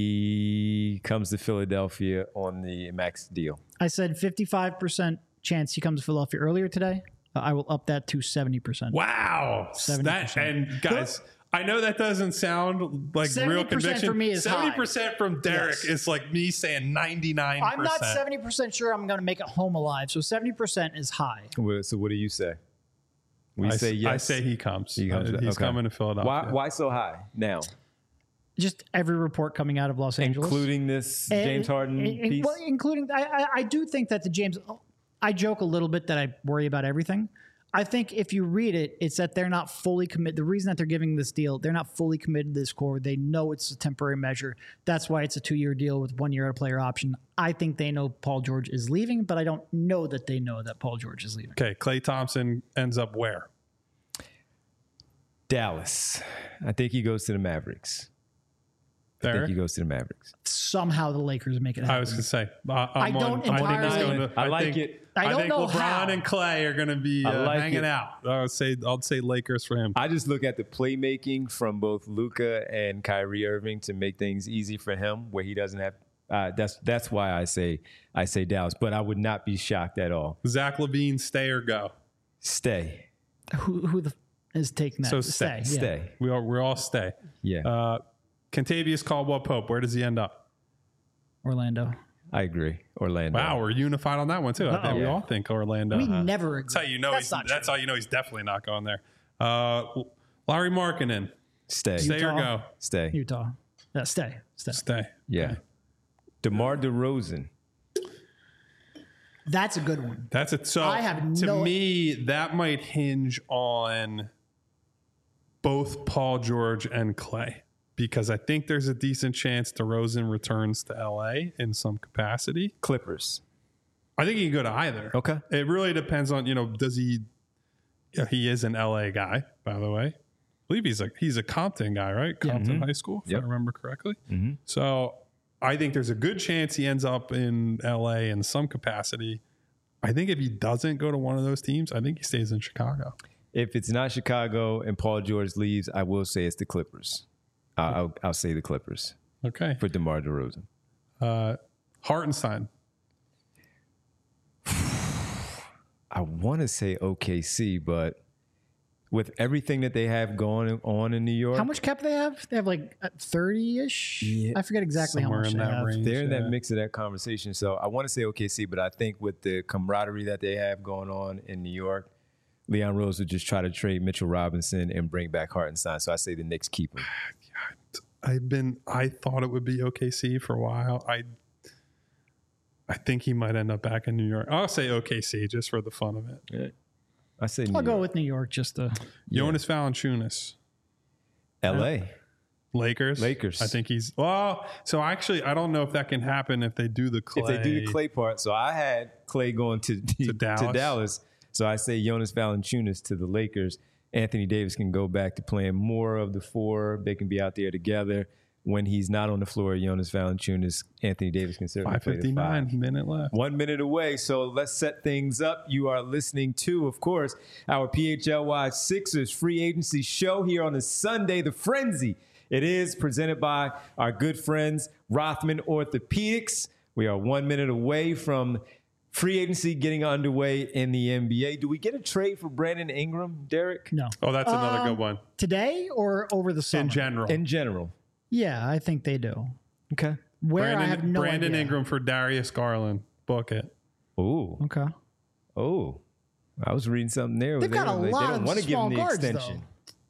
Speaker 1: He comes to Philadelphia on the max deal.
Speaker 3: I said fifty-five percent chance he comes to Philadelphia earlier today. Uh, I will up that to seventy percent.
Speaker 2: Wow.
Speaker 3: seventy
Speaker 2: That,
Speaker 3: percent.
Speaker 2: and guys, I know that doesn't sound like real
Speaker 3: seventy percent
Speaker 2: conviction.
Speaker 3: for me is
Speaker 2: seventy
Speaker 3: high.
Speaker 2: percent from Derek
Speaker 3: Yes.
Speaker 2: is like me saying ninety-nine percent.
Speaker 3: I'm not seventy percent sure I'm going to make it home alive, so seventy percent is high.
Speaker 1: Well, So what do you say? We
Speaker 2: I,
Speaker 1: say yes.
Speaker 2: I say he comes.
Speaker 1: He comes
Speaker 2: Uh,
Speaker 1: to-
Speaker 2: He's
Speaker 1: okay.
Speaker 2: coming to Philadelphia.
Speaker 1: Why, why so high now?
Speaker 3: Just every report coming out of Los Angeles.
Speaker 1: Including this
Speaker 3: And-
Speaker 1: James Harden
Speaker 3: and- and-
Speaker 1: piece?
Speaker 3: Well, including, I, I, I do think that the James, I joke a little bit that I worry about everything. I think if you read it, it's that they're not fully committed. The reason that they're giving this deal, they're not fully committed to this core. They know it's a temporary measure. That's why it's a two-year deal with one year at a player option. I think they know Paul George is leaving, but I don't know that they know that Paul George is leaving.
Speaker 2: Okay, Klay Thompson ends up where?
Speaker 1: Dallas. I think he goes to the Mavericks. I
Speaker 2: There.
Speaker 1: think he goes to the Mavericks.
Speaker 3: Somehow the Lakers make it happen.
Speaker 2: I was going to say. Uh, I'm
Speaker 3: I don't
Speaker 2: on, I think he's
Speaker 3: entirely-
Speaker 2: going to.
Speaker 1: I like
Speaker 2: think,
Speaker 1: it.
Speaker 3: I don't
Speaker 2: think
Speaker 3: know
Speaker 2: LeBron
Speaker 3: how.
Speaker 2: and Clay are going to be
Speaker 1: I
Speaker 2: uh,
Speaker 1: like
Speaker 2: hanging
Speaker 1: it.
Speaker 2: out. I would say I'll say Lakers for him.
Speaker 1: I just look at the playmaking from both Luka and Kyrie Irving to make things easy for him, where he doesn't have uh, that's that's why I say I say Dallas. But I would not be shocked at all.
Speaker 2: Zach LaVine, stay or go?
Speaker 1: Stay.
Speaker 3: Who who the is taking that?
Speaker 2: So stay.
Speaker 3: Yeah.
Speaker 1: Stay.
Speaker 2: We all we're all stay.
Speaker 1: Yeah,
Speaker 2: Uh, Kentavious Caldwell-Pope, where does he end up?
Speaker 3: Orlando.
Speaker 1: I agree. Orlando.
Speaker 2: Wow, we're unified on that one too. I think we
Speaker 1: Yeah.
Speaker 2: all think Orlando.
Speaker 3: We never agree.
Speaker 2: That's how you know
Speaker 3: That's
Speaker 2: he's.
Speaker 3: not
Speaker 2: That's
Speaker 3: true.
Speaker 2: how you know he's definitely not going there. Uh, Larry Markkinen,
Speaker 1: Stay.
Speaker 2: stay or
Speaker 3: Utah.
Speaker 2: go?
Speaker 1: Stay.
Speaker 3: Utah. Yeah, stay. Stay.
Speaker 2: Stay.
Speaker 1: Yeah. DeMar DeRozan.
Speaker 3: That's a good one.
Speaker 2: That's it. So
Speaker 3: I have
Speaker 2: to
Speaker 3: no-
Speaker 2: me, that might hinge on both Paul George and Clay, because I think there's a decent chance DeRozan returns to L A in some capacity.
Speaker 1: Clippers.
Speaker 2: I think he can go to either.
Speaker 1: Okay.
Speaker 2: It really depends on, you know, does he, yeah, he is an L A guy, by the way. I believe he's a, he's a Compton guy, right? Compton High School, if
Speaker 1: Yep.
Speaker 2: I remember correctly.
Speaker 1: Mm-hmm.
Speaker 2: So I think there's a good chance he ends up in L A in some capacity. I think if he doesn't go to one of those teams, I think he stays in Chicago.
Speaker 1: If it's not Chicago and Paul George leaves, I will say it's the Clippers. Uh, I'll, I'll say the Clippers
Speaker 2: Okay.
Speaker 1: for DeMar DeRozan.
Speaker 2: Uh, Hartenstein.
Speaker 1: I want to say O K C, but with everything that they have going on in New York,
Speaker 3: How much cap they have? They have like thirty-ish.
Speaker 1: Yeah,
Speaker 3: I forget exactly how
Speaker 2: somewhere
Speaker 3: much
Speaker 2: in
Speaker 3: they
Speaker 2: that
Speaker 3: have.
Speaker 2: range.
Speaker 1: they're in
Speaker 2: Yeah.
Speaker 1: that mix of that conversation. So I want to say O K C, but I think with the camaraderie that they have going on in New York, Leon Rose would just try to trade Mitchell Robinson and bring back Hartenstein. So I say the Knicks keep him.
Speaker 2: I've been, I thought it would be O K C for a while. I, I think he might end up back in New York. I'll say O K C just for the fun of it.
Speaker 1: Yeah. I say New
Speaker 3: I'll go
Speaker 1: York.
Speaker 3: with New York just to.
Speaker 2: Jonas Valanciunas.
Speaker 1: L A.
Speaker 2: Lakers.
Speaker 1: Lakers.
Speaker 2: I think he's well. So actually, I don't know if that can happen if they do the Clay.
Speaker 1: If they do the Clay part, so I had Clay going to to
Speaker 2: Dallas.
Speaker 1: Dallas. So I say Jonas Valanciunas to the Lakers. Anthony Davis can go back to playing more of the four. They can be out there together. When he's not on the floor, Jonas Valanciunas, Anthony Davis can certainly
Speaker 2: five
Speaker 1: play the
Speaker 2: fifty-nine
Speaker 1: five.
Speaker 2: minute left.
Speaker 1: One minute away, so let's set things up. You are listening to, of course, our P H L Y Sixers free agency show here on a Sunday, The Frenzy. It is presented by our good friends, Rothman Orthopedics. We are one minute away from free agency getting underway in the N B A. Do we get a trade for Brandon Ingram, Derek?
Speaker 3: No.
Speaker 2: Oh, that's another
Speaker 3: Um,
Speaker 2: good one.
Speaker 3: Today or over the summer?
Speaker 2: In general,
Speaker 1: In general.
Speaker 3: Yeah, I think they do.
Speaker 1: Okay.
Speaker 3: Where
Speaker 2: Brandon,
Speaker 3: I have no
Speaker 2: Brandon
Speaker 3: idea.
Speaker 2: Ingram for Darius Garland. Book it.
Speaker 1: Ooh.
Speaker 3: Okay.
Speaker 1: Oh. I was reading something there.
Speaker 3: They've
Speaker 1: They
Speaker 3: got a
Speaker 1: don't- they
Speaker 3: lot
Speaker 1: don't
Speaker 3: of
Speaker 1: want to give
Speaker 3: small
Speaker 1: him the
Speaker 3: guards,
Speaker 1: extension.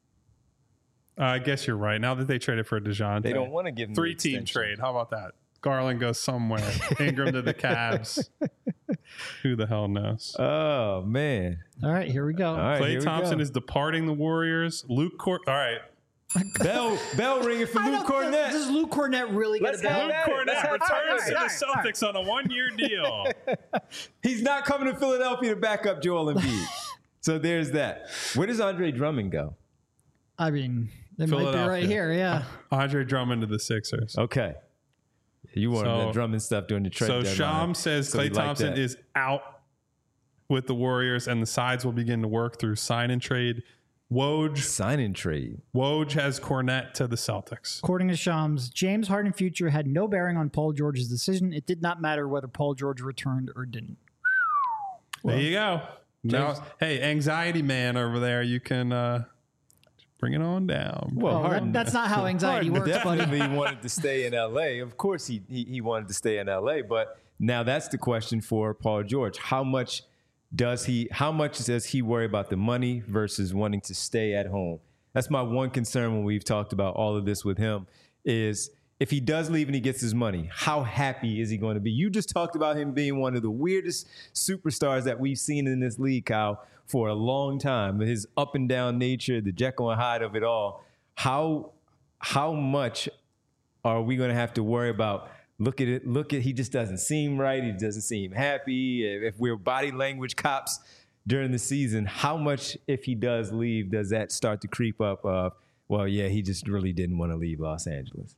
Speaker 2: Uh, I guess you're right. Now that they traded for DeJounte,
Speaker 1: They don't want to give him the
Speaker 2: three team
Speaker 1: extension.
Speaker 2: trade. How about that? Garland goes somewhere. Ingram to the Cavs. Who the hell knows?
Speaker 1: Oh, man.
Speaker 3: All right, here we go.
Speaker 1: All right,
Speaker 2: Klay
Speaker 1: here we
Speaker 2: Thompson
Speaker 1: go.
Speaker 2: is departing the Warriors. Luke Court. All right.
Speaker 1: Bell, bell ringing for
Speaker 3: I
Speaker 1: Luke
Speaker 3: don't-
Speaker 1: Cornett.
Speaker 3: Does Luke Cornett really
Speaker 1: Let's
Speaker 3: get a
Speaker 1: have
Speaker 3: bell?
Speaker 1: that.
Speaker 2: Luke
Speaker 1: Let's
Speaker 2: Cornett
Speaker 1: have-
Speaker 2: returns
Speaker 3: all right,
Speaker 2: to
Speaker 3: all
Speaker 2: the
Speaker 3: right, all right.
Speaker 2: Celtics on a one year deal.
Speaker 1: He's not coming to Philadelphia to back up Joel Embiid. So there's that. Where does Andre Drummond go?
Speaker 3: I mean, they might be
Speaker 2: Philadelphia.
Speaker 3: right here. Yeah.
Speaker 2: Andre Drummond to the Sixers.
Speaker 1: Okay. You wanted
Speaker 2: So-
Speaker 1: that Drummond stuff during the trade
Speaker 2: So
Speaker 1: deadline.
Speaker 2: Sham says
Speaker 1: So
Speaker 2: Klay
Speaker 1: we like
Speaker 2: Thompson
Speaker 1: that.
Speaker 2: is out with the Warriors, and the sides will begin to work through sign and trade. Woj
Speaker 1: Sign and trade.
Speaker 2: Woj has Cornette to the Celtics.
Speaker 3: According to Shams, James Harden future had no bearing on Paul George's decision. It did not matter whether Paul George returned or didn't.
Speaker 2: There you go. Now,
Speaker 1: James-
Speaker 2: hey, anxiety man over there, you can uh, bring it on down.
Speaker 1: Well,
Speaker 3: Oh, that-
Speaker 1: Harden,
Speaker 3: that's not how anxiety
Speaker 1: Harden
Speaker 3: works, buddy.
Speaker 1: definitely wanted to stay in L A. Of course, he, he he wanted to stay in L A. But now that's the question for Paul George. How much does he? How much does he worry about the money versus wanting to stay at home? That's my one concern when we've talked about all of this with him. Is if he does leave and he gets his money, how happy is he going to be? You just talked about him being one of the weirdest superstars that we've seen in this league, Kyle, for a long time. His up and down nature, the Jekyll and Hyde of it all. How how much are we going to have to worry about? Look at it. Look at he just doesn't seem right. He doesn't seem happy. If we're body language cops during the season, how much, if he does leave, does that start to creep up? Of well, yeah, he just really didn't want to leave Los Angeles.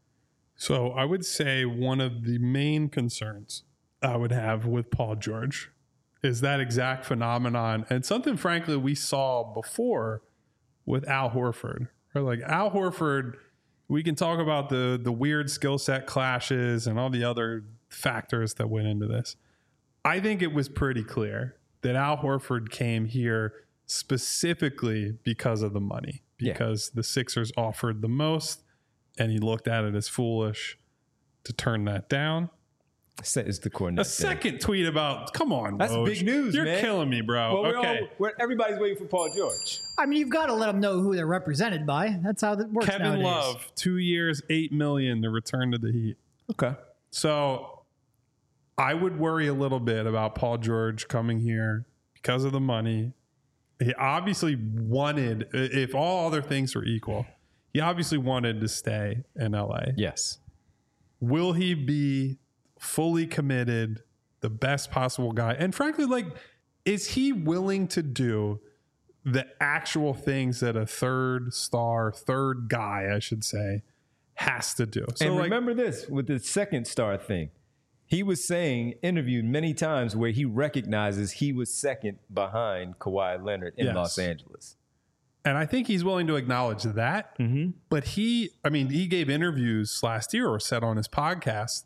Speaker 2: So I would say one of the main concerns I would have with Paul George is that exact phenomenon, and something, frankly, we saw before with Al Horford. Right? Like Al Horford we can talk about the the weird skill set clashes and all the other factors that went into this. I think it was pretty clear that Al Horford came here specifically because of the money, because yeah. the Sixers offered the most, and he looked at it as foolish to turn that down.
Speaker 1: Is the Kornet
Speaker 2: a second thing. Tweet about, come on,
Speaker 1: that's
Speaker 2: Woj.
Speaker 1: big news.
Speaker 2: You're
Speaker 1: man.
Speaker 2: killing me, bro.
Speaker 1: Well, we're
Speaker 2: okay,
Speaker 1: all, we're, everybody's waiting for Paul George.
Speaker 3: I mean, you've got to let them know who they're represented by. That's how that works.
Speaker 2: Kevin
Speaker 3: nowadays.
Speaker 2: Love, two years, eight million to return to the Heat.
Speaker 1: Okay,
Speaker 2: so I would worry a little bit about Paul George coming here because of the money. He obviously wanted, if all other things were equal, he obviously wanted to stay in L A.
Speaker 1: Yes.
Speaker 2: Will he be fully committed, the best possible guy? And frankly, like, is he willing to do the actual things that a third star, third guy, I should say, has to do?
Speaker 1: So, and like, remember this with the second star thing. He was saying, interviewed many times, where he recognizes he was second behind Kawhi Leonard in yes. Los Angeles.
Speaker 2: And I think he's willing to acknowledge that.
Speaker 1: Mm-hmm.
Speaker 2: But he, I mean, he gave interviews last year or said on his podcast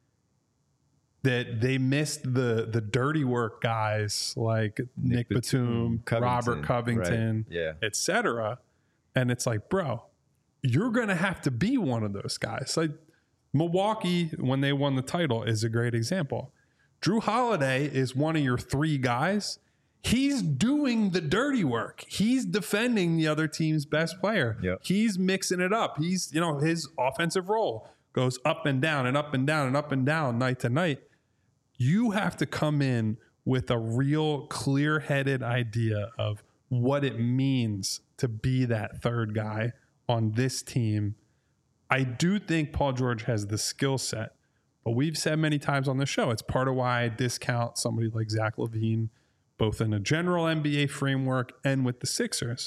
Speaker 2: that they missed the the dirty work guys like Nick, Nick Batum, Batum Covington, Robert Covington,
Speaker 1: right. yeah.
Speaker 2: et cetera. And it's like, bro, you're going to have to be one of those guys. Like, Milwaukee, when they won the title, is a great example. Drew Holiday is one of your three guys. He's doing the dirty work. He's defending the other team's best player.
Speaker 1: Yep.
Speaker 2: He's mixing it up. He's, you know, his offensive role goes up and down and up and down and up and down night to night. You have to come in with a real clear-headed idea of what it means to be that third guy on this team. I do think Paul George has the skill set, but we've said many times on the show, it's part of why I discount somebody like Zach LaVine, both in a general N B A framework and with the Sixers.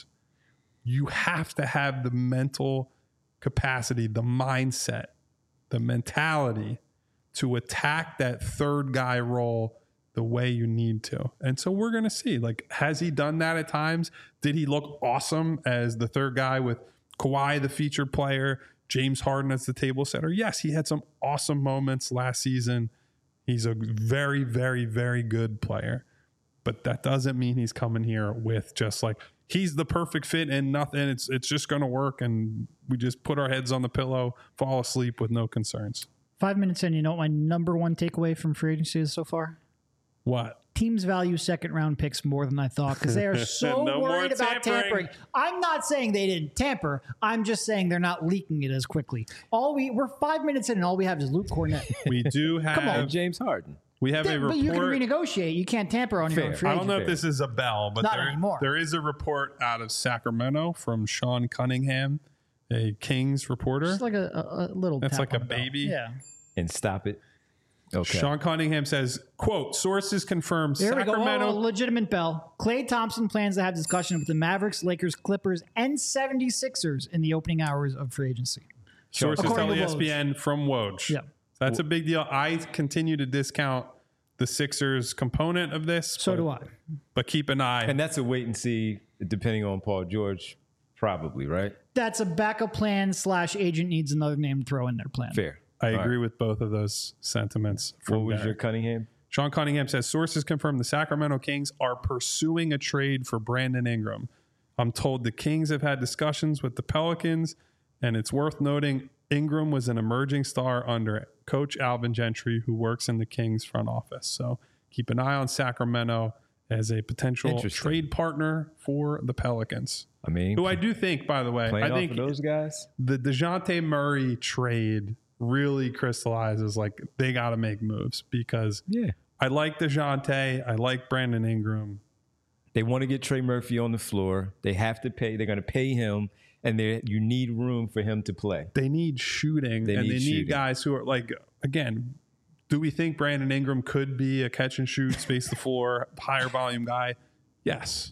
Speaker 2: You have to have the mental capacity, the mindset, the mentality to attack that third guy role the way you need to. And so we're going to see, like, has he done that at times? Did he look awesome as the third guy with Kawhi, the featured player, James Harden as the table setter? Yes, he had some awesome moments last season. He's a very, very, very good player. But that doesn't mean he's coming here with just like, he's the perfect fit and nothing. It's it's just going to work. And we just put our heads on the pillow, fall asleep with no concerns.
Speaker 3: Five minutes in, you know what my number one takeaway from free agency is so far?
Speaker 2: What?
Speaker 3: Teams value second round picks more than I thought because they are so
Speaker 2: no
Speaker 3: worried about
Speaker 2: tampering.
Speaker 3: tampering. I'm not saying they didn't tamper. I'm just saying they're not leaking it as quickly. All we we're five minutes in and all we have is Luke Cornett.
Speaker 2: We do have
Speaker 3: Come on.
Speaker 1: James Harden.
Speaker 2: We have
Speaker 3: yeah,
Speaker 2: a report.
Speaker 3: But you can renegotiate. You can't tamper on
Speaker 1: Fair.
Speaker 3: your own free
Speaker 2: I don't know
Speaker 3: agent.
Speaker 2: if this is a bell, but
Speaker 3: Not
Speaker 2: there,
Speaker 3: anymore.
Speaker 2: there is a report out of Sacramento from Sean Cunningham, a Kings reporter.
Speaker 3: Just like a, a, a little.
Speaker 2: That's
Speaker 3: tap
Speaker 2: like
Speaker 3: on
Speaker 2: a
Speaker 3: the bell.
Speaker 2: baby.
Speaker 3: Yeah.
Speaker 1: And stop it. Okay.
Speaker 2: Sean Cunningham says, quote, sources confirm
Speaker 3: There
Speaker 2: Sacramento.
Speaker 3: we go. Oh, legitimate bell. Klay Thompson plans to have discussion with the Mavericks, Lakers, Clippers, and seventy-sixers in the opening hours of free agency.
Speaker 2: Sources
Speaker 3: According
Speaker 2: tell
Speaker 3: to
Speaker 2: E S P N
Speaker 3: Woj.
Speaker 2: from Woj.
Speaker 3: Yeah.
Speaker 2: That's a big deal. I continue to discount the Sixers component of this.
Speaker 3: So
Speaker 2: but,
Speaker 3: do I.
Speaker 2: But keep an eye.
Speaker 1: And that's a wait and see, depending on Paul George, probably, right?
Speaker 3: That's a backup plan slash agent needs another name to throw in their plan.
Speaker 1: Fair.
Speaker 2: I
Speaker 1: All
Speaker 2: agree
Speaker 1: right.
Speaker 2: with both of those sentiments. From
Speaker 1: What was
Speaker 2: there.
Speaker 1: your Cunningham?
Speaker 2: Sean Cunningham says sources confirm the Sacramento Kings are pursuing a trade for Brandon Ingram. I'm told the Kings have had discussions with the Pelicans, and it's worth noting Ingram was an emerging star under Coach Alvin Gentry, who works in the Kings front office. So keep an eye on Sacramento as a potential trade partner for the Pelicans.
Speaker 1: I mean,
Speaker 2: who I do think, by the way,
Speaker 1: playing
Speaker 2: I
Speaker 1: off
Speaker 2: think
Speaker 1: of those guys.
Speaker 2: the DeJounte Murray trade really crystallizes like they got to make moves because
Speaker 1: Yeah.
Speaker 2: I like DeJounte. I like Brandon Ingram.
Speaker 1: They want to get Trey Murphy on the floor. They have to pay. They're going to pay him, and they you need room for him to play.
Speaker 2: They need shooting,
Speaker 1: They
Speaker 2: and
Speaker 1: need
Speaker 2: they
Speaker 1: shooting.
Speaker 2: need guys who are like, again, do we think Brandon Ingram could be a catch and shoot, space the floor, higher volume guy? Yes.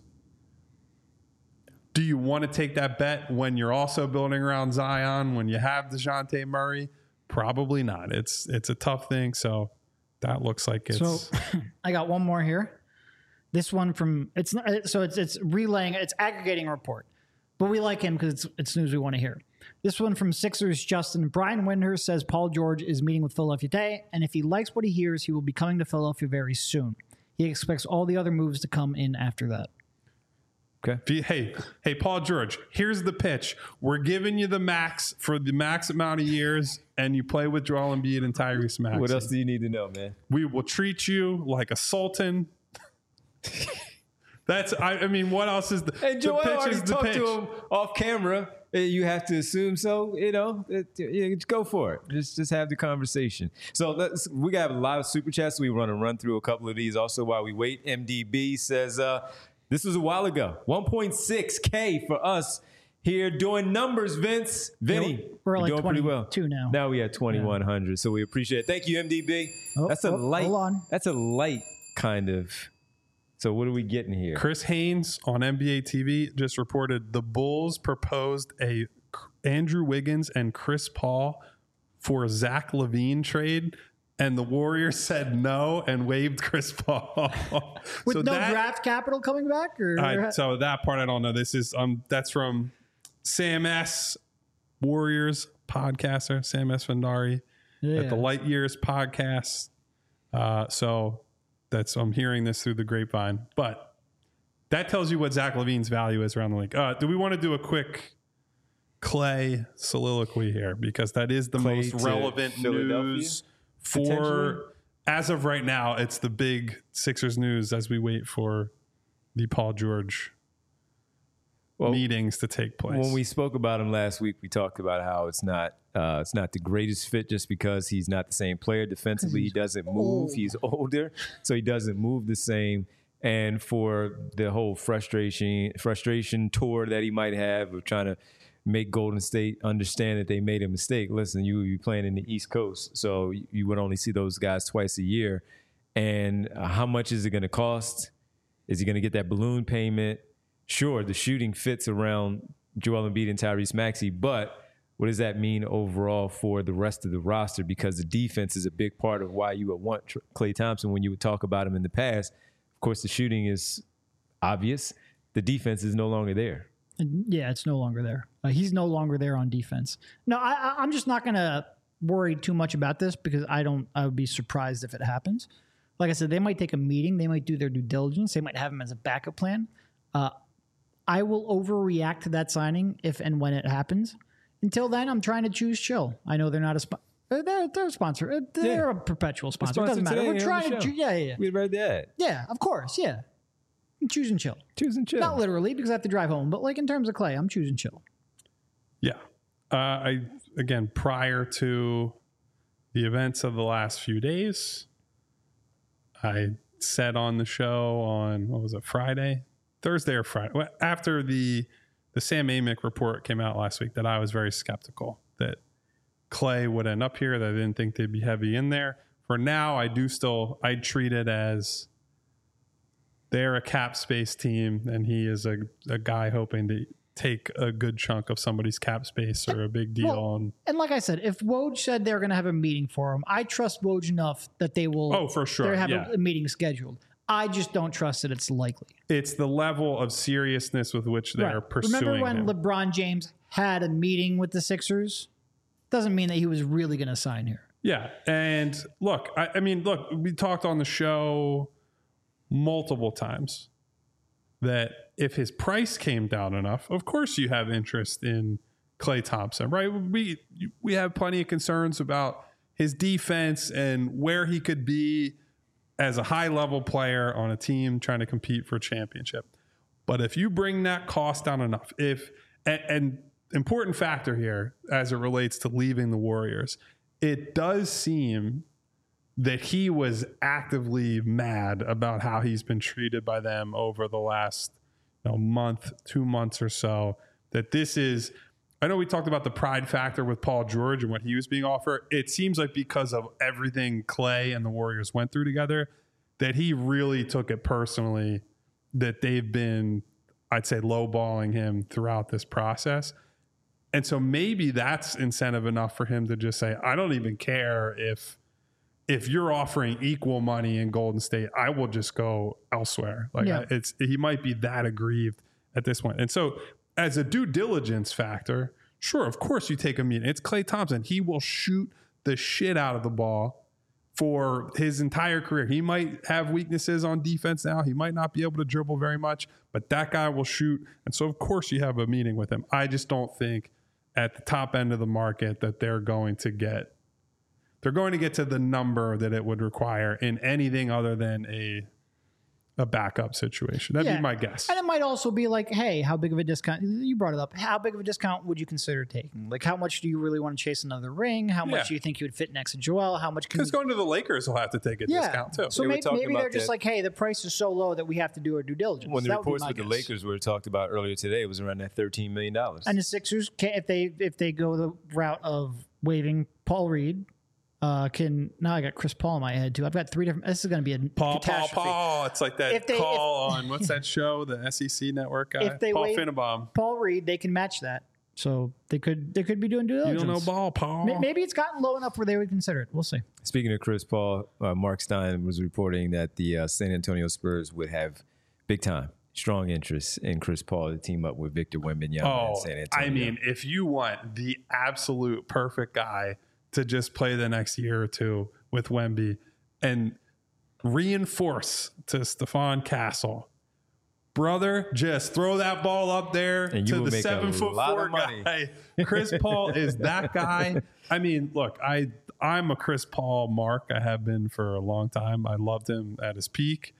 Speaker 2: Do you want to take that bet when you're also building around Zion, when you have DeJounte Murray? Probably not. It's it's a tough thing. So that looks like it's.
Speaker 3: So I got one more here. This one from it's not, so it's it's relaying it's aggregating a report, but we like him because it's it's news we want to hear. This one from Sixers Justin. Brian Windhurst says Paul George is meeting with Philadelphia today, and if he likes what he hears, he will be coming to Philadelphia very soon. He expects all the other moves to come in after that.
Speaker 1: Okay.
Speaker 2: Hey, hey, Paul George, here's the pitch. We're giving you the max for the max amount of years, and you play with Joel Embiid and Tyrese Maxey.
Speaker 1: What else do you need to know, man?
Speaker 2: We will treat you like a sultan. That's, I, I mean, what else is the,
Speaker 1: Hey, Joel,
Speaker 2: the pitch
Speaker 1: already
Speaker 2: is the
Speaker 1: talked
Speaker 2: pitch.
Speaker 1: to him off camera. You have to assume so, you know, it, yeah, just go for it. Just just have the conversation. So let's, we got a lot of super chats. We want to run through a couple of these also while we wait. M D B says, uh, this was a while ago. one point six K for us here doing numbers, Vince. Vinny,
Speaker 3: Yeah, we're
Speaker 1: you're
Speaker 3: like
Speaker 1: doing pretty well.
Speaker 3: twenty-two now.
Speaker 1: Now we at twenty-one hundred, so we appreciate it. Thank you, M D B.
Speaker 3: Oh,
Speaker 1: that's a
Speaker 3: oh,
Speaker 1: light.
Speaker 3: hold on.
Speaker 1: That's a light kind of. So what are we getting here?
Speaker 2: Chris Haynes on N B A T V just reported the Bulls proposed a Andrew Wiggins and Chris Paul for Zach LaVine trade, and the Warriors said no and waived Chris Paul.
Speaker 3: With
Speaker 2: so
Speaker 3: no
Speaker 2: that,
Speaker 3: draft capital coming back? Or
Speaker 2: I, so that part I don't know. This is um that's from Sam S. Warriors podcaster, Sam S. Vendari
Speaker 3: yeah.
Speaker 2: at the Light Years podcast. Uh, so that's I'm hearing this through the grapevine, but that tells you what Zach LaVine's value is around the league. Uh, do we want to do a quick Clay soliloquy here, because that is the
Speaker 1: Clay
Speaker 2: most
Speaker 1: to
Speaker 2: relevant
Speaker 1: Philadelphia,
Speaker 2: news
Speaker 1: potentially?
Speaker 2: for as of right now? It's the big Sixers news as we wait for the Paul George
Speaker 1: Well,
Speaker 2: meetings to take place.
Speaker 1: When we spoke about him last week, we talked about how it's not uh, it's not the greatest fit just because he's not the same player defensively. He doesn't move.
Speaker 3: old.
Speaker 1: He's older, so he doesn't move the same. And for the whole frustration frustration tour that he might have of trying to make Golden State understand that they made a mistake. Listen, you you playing in the East Coast, so you would only see those guys twice a year. And uh, how much is it going to cost? Is he going to get that balloon payment? Sure, the shooting fits around Joel Embiid and Tyrese Maxey, but what does that mean overall for the rest of the roster? Because the defense is a big part of why you would want Klay Thompson when you would talk about him in the past. Of course, the shooting is obvious. The defense is no longer there.
Speaker 3: Yeah, it's no longer there. Uh, he's no longer there on defense. No, I, I, I'm just not going to worry too much about this because I don't. I would be surprised if it happens. Like I said, they might take a meeting. They might do their due diligence. They might have him as a backup plan. Uh, I will overreact to that signing if and when it happens. Until then, I'm trying to choose chill. I know they're not a sponsor. They're, they're a sponsor. Uh, They're
Speaker 1: Yeah.
Speaker 3: a perpetual sponsor. It
Speaker 1: Sponsor
Speaker 3: doesn't matter.
Speaker 1: today
Speaker 3: We're
Speaker 1: on the
Speaker 3: trying to.
Speaker 1: show.
Speaker 3: Choo- yeah, yeah, yeah.
Speaker 1: We read that.
Speaker 3: Yeah, of course. Yeah. I'm choosing chill.
Speaker 1: Choosing chill.
Speaker 3: Not literally because I have to drive home, but like in terms of Clay, I'm choosing chill.
Speaker 2: Yeah. Uh, I again, prior to the events of the last few days, I said on the show on, what was it, Friday? Thursday or Friday? Well, after the the Sam Amick report came out last week, that I was very skeptical that Clay would end up here, that I didn't think they'd be heavy in there. For now, I do still, I treat it as they're a cap space team, and he is a, a guy hoping to take a good chunk of somebody's cap space or a big deal.
Speaker 3: Well,
Speaker 2: on
Speaker 3: And like I said, if Woj said they're going to have a meeting for him, I trust Woj enough that they will.
Speaker 2: Oh, for sure,
Speaker 3: They have
Speaker 2: yeah.
Speaker 3: a, a meeting scheduled. I just don't trust that it's likely.
Speaker 2: It's the level of seriousness with which they're
Speaker 3: Right.
Speaker 2: pursuing
Speaker 3: Remember when
Speaker 2: him.
Speaker 3: LeBron James had a meeting with the Sixers? Doesn't mean that he was really going to sign here.
Speaker 2: Yeah. And look, I, I mean, look, we talked on the show multiple times that if his price came down enough, of course you have interest in Klay Thompson, right? We we have plenty of concerns about his defense and where he could be as a high level player on a team trying to compete for a championship. But if you bring that cost down enough, if and, and important factor here as it relates to leaving the Warriors, it does seem that he was actively mad about how he's been treated by them over the last you know, month, two months or so. That this is, I know we talked about the pride factor with Paul George and what he was being offered. It seems like because of everything Clay and the Warriors went through together, that he really took it personally that they've been, I'd say, lowballing him throughout this process. And so maybe that's incentive enough for him to just say, I don't even care if if you're offering equal money in Golden State, I will just go elsewhere. Like
Speaker 3: Yeah.
Speaker 2: I, it's he might be that aggrieved at this point. And so as a due diligence factor, Sure, of course you take a meeting. It's Klay Thompson. He will shoot the shit out of the ball for his entire career. He might have weaknesses on defense now. He might not be able to dribble very much, but that guy will shoot. And so, of course, you have a meeting with him. I just don't think at the top end of the market that they're going to get, they're going to get to the number that it would require in anything other than a a backup situation. That'd
Speaker 3: Yeah.
Speaker 2: be my guess.
Speaker 3: And it might also be like, hey, how big of a discount? You brought it up. How big of a discount would you consider taking? Like, how much do you really want to chase another ring? How much
Speaker 2: Yeah.
Speaker 3: do you think you would fit next to Joel? How much can
Speaker 2: Because
Speaker 3: you,
Speaker 2: going to the Lakers will have to take a
Speaker 3: yeah.
Speaker 2: discount too.
Speaker 3: So
Speaker 1: They were
Speaker 3: maybe,
Speaker 1: talking
Speaker 3: maybe
Speaker 1: about
Speaker 3: they're just
Speaker 1: that.
Speaker 3: like, hey, the price is so low that we have to do our due diligence.
Speaker 1: When the
Speaker 3: That would be
Speaker 1: reports
Speaker 3: my
Speaker 1: with the
Speaker 3: guess.
Speaker 1: Lakers were talked about earlier today, it was around that thirteen million dollars.
Speaker 3: And the Sixers, can, if they if they go the route of waiving Paul Reed, uh, can now I got Chris Paul in my head too. I've got three different. This is going to be a
Speaker 2: Paul, Paul,
Speaker 3: catastrophe.
Speaker 2: Paul. It's like that
Speaker 3: If they-
Speaker 2: call on, what's that show? The S E C network guy?
Speaker 3: If they
Speaker 2: Paul
Speaker 3: wait-
Speaker 2: Finnbaum.
Speaker 3: Paul Reed, they can match that. So they could they could be doing due
Speaker 2: You
Speaker 3: diligence.
Speaker 2: don't know ball, Paul.
Speaker 3: May- Maybe it's gotten low enough where they would consider it. We'll see.
Speaker 1: Speaking of Chris Paul, uh, Mark Stein was reporting that the uh, San Antonio Spurs would have big time, strong interest in Chris Paul to team up with Victor Wembanyama in
Speaker 2: Oh,
Speaker 1: San Antonio.
Speaker 2: I mean, if you want the absolute perfect guy to just play the next year or two with Wemby and reinforce to Stephon Castle, brother, just throw that ball up there
Speaker 1: And you
Speaker 2: to
Speaker 1: will
Speaker 2: the
Speaker 1: make a
Speaker 2: seven foot
Speaker 1: lot
Speaker 2: four
Speaker 1: of money.
Speaker 2: guy. Chris Paul is that guy. I mean, look, I I'm a Chris Paul mark. I have been for a long time. I loved him at his peak.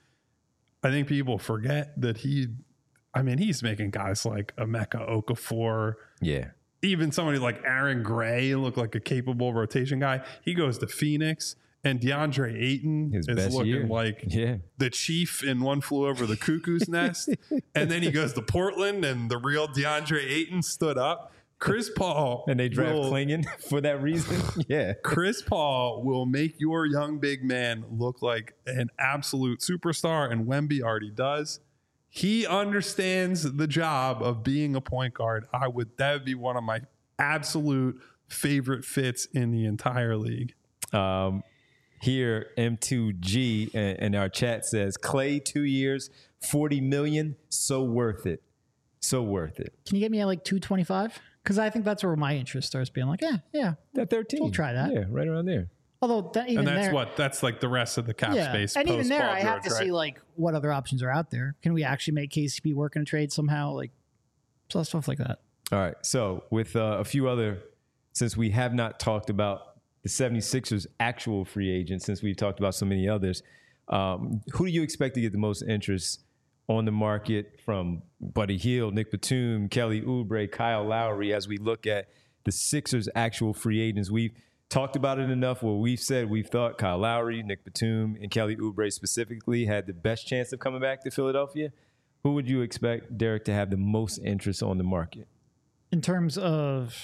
Speaker 2: I think people forget that he, I mean, he's making guys like Emeka Okafor,
Speaker 1: yeah.
Speaker 2: even somebody like Aaron Gray look like a capable rotation guy. He goes to Phoenix, and DeAndre Ayton
Speaker 1: His
Speaker 2: is
Speaker 1: best
Speaker 2: looking
Speaker 1: year.
Speaker 2: like
Speaker 1: Yeah.
Speaker 2: the chief in One Flew Over the Cuckoo's Nest. And then he goes to Portland, and the real DeAndre Ayton stood up. Chris Paul
Speaker 1: And they draft
Speaker 2: will,
Speaker 1: Klingon for that reason. Yeah.
Speaker 2: Chris Paul will make your young big man look like an absolute superstar, and Wemby already does. He understands the job of being a point guard. I would that would be one of my absolute favorite fits in the entire league.
Speaker 1: Um, here, M two G in, in our chat says Clay two years, forty million, so worth it, so worth it.
Speaker 3: Can you get me at like two twenty five? Because I think that's where my interest starts being like, yeah, yeah.
Speaker 1: That thirteen,
Speaker 3: We'll try that.
Speaker 1: Yeah, right around there.
Speaker 3: Although that, even
Speaker 2: And that's
Speaker 3: there,
Speaker 2: what that's like the rest of the cap
Speaker 3: yeah,
Speaker 2: space.
Speaker 3: and even
Speaker 2: post
Speaker 3: there,
Speaker 2: Paul
Speaker 3: I have
Speaker 2: George,
Speaker 3: to
Speaker 2: right?
Speaker 3: see like what other options are out there. Can we actually make K C P work in a trade somehow? Like, so stuff like that.
Speaker 1: All right. So with uh, a few other, since we have not talked about the 76ers actual free agents, since we've talked about so many others, um, who do you expect to get the most interest on the market from Buddy Hield, Nick Batum, Kelly Oubre, Kyle Lowry, as we look at the Sixers actual free agents? We've talked about it enough where we've said we've thought Kyle Lowry, Nick Batum, and Kelly Oubre specifically had the best chance of coming back to Philadelphia. Who would you expect, Derek, to have the most interest on the market
Speaker 3: In terms of,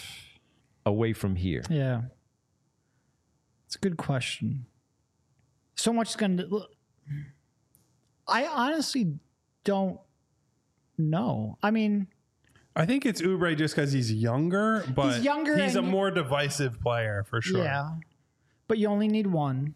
Speaker 1: away from here?
Speaker 3: yeah, it's a good question. So much is going to. I honestly don't know. I mean,
Speaker 2: I think it's Oubre just because he's younger, but
Speaker 3: He's younger
Speaker 2: he's a
Speaker 3: and-
Speaker 2: more divisive player for sure.
Speaker 3: yeah, but you only need one.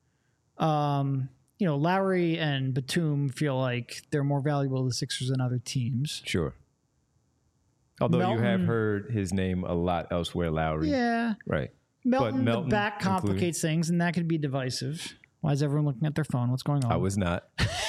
Speaker 3: Um, you know, Lowry and Batum feel like they're more valuable to the Sixers than other teams.
Speaker 1: Sure. Although you have
Speaker 3: Melton-
Speaker 1: heard his name a lot elsewhere, Lowry.
Speaker 3: Yeah,
Speaker 1: Right.
Speaker 3: Melton,
Speaker 1: Melton
Speaker 3: the back complicates things, and that could be divisive. Why is everyone looking at their phone? What's going on?
Speaker 1: I was not.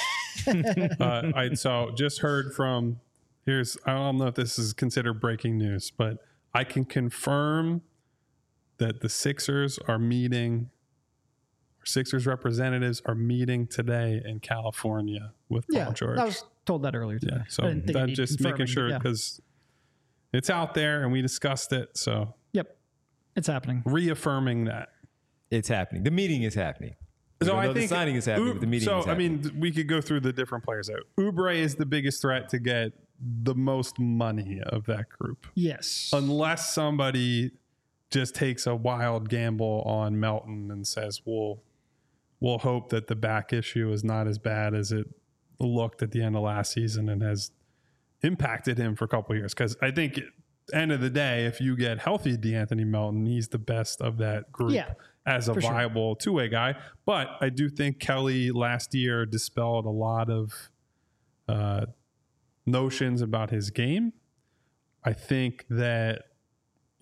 Speaker 2: uh, I so just heard from here's I don't know if this is considered breaking news, but I can confirm that the Sixers are meeting. Sixers representatives are meeting today in California with Paul
Speaker 3: yeah,
Speaker 2: George.
Speaker 3: I was told that earlier today.
Speaker 2: yeah, so
Speaker 3: I didn't think it
Speaker 2: that
Speaker 3: needed
Speaker 2: just making
Speaker 3: confirming,
Speaker 2: sure
Speaker 3: but yeah.
Speaker 2: because it's out there and we discussed it. So
Speaker 3: Yep, it's happening.
Speaker 2: reaffirming that.
Speaker 1: It's happening. The meeting is happening.
Speaker 2: So
Speaker 1: Even
Speaker 2: I
Speaker 1: though
Speaker 2: think
Speaker 1: the signing is happening,
Speaker 2: U-
Speaker 1: but the meeting
Speaker 2: so
Speaker 1: is
Speaker 2: I
Speaker 1: happening.
Speaker 2: mean, we could go through the different players out. Oubre is the biggest threat to get the most money of that group,
Speaker 3: Yes.
Speaker 2: unless somebody just takes a wild gamble on Melton and says, "We'll we'll hope that the back issue is not as bad as it looked at the end of last season and has impacted him for a couple of years." Because I think, at the end of the day, if you get healthy DeAnthony Melton, he's the best of that group.
Speaker 3: Yeah,
Speaker 2: As a
Speaker 3: for sure.
Speaker 2: viable two-way guy. But I do think Kelly last year dispelled a lot of uh, notions about his game. I think that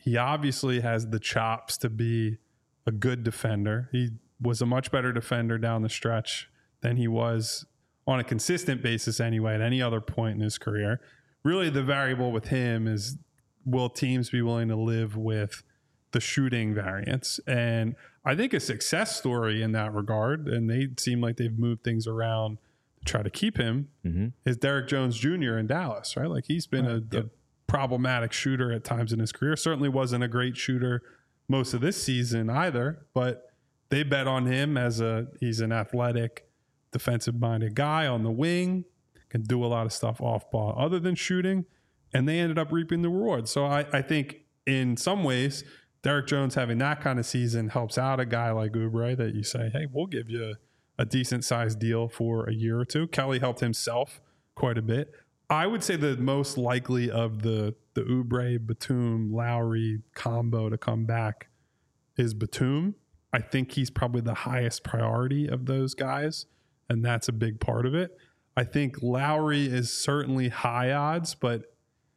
Speaker 2: He obviously has the chops to be a good defender. He was a much better defender down the stretch than he was on a consistent basis anyway at any other point in his career. Really, the variable with him is, will teams be willing to live with the shooting variance? And I think a success story in that regard, and they seem like they've moved things around to try to keep him, mm-hmm. is Derek Jones Junior in Dallas, right? Like he's been right. a, yep. a problematic shooter at times in his career. Certainly wasn't a great shooter most of this season either, but they bet on him as a, he's an athletic, defensive-minded guy on the wing, can do a lot of stuff off ball other than shooting, and they ended up reaping the rewards. So I, I think in some ways, Derek Jones having that kind of season helps out a guy like Oubre that you say, hey, we'll give you a, a decent-sized deal for a year or two. Kelly helped himself quite a bit. I would say the most likely of the, the Oubre, Batum, Lowry combo to come back is Batum. I think he's probably the highest priority of those guys, and that's a big part of it. I think Lowry is certainly high odds, but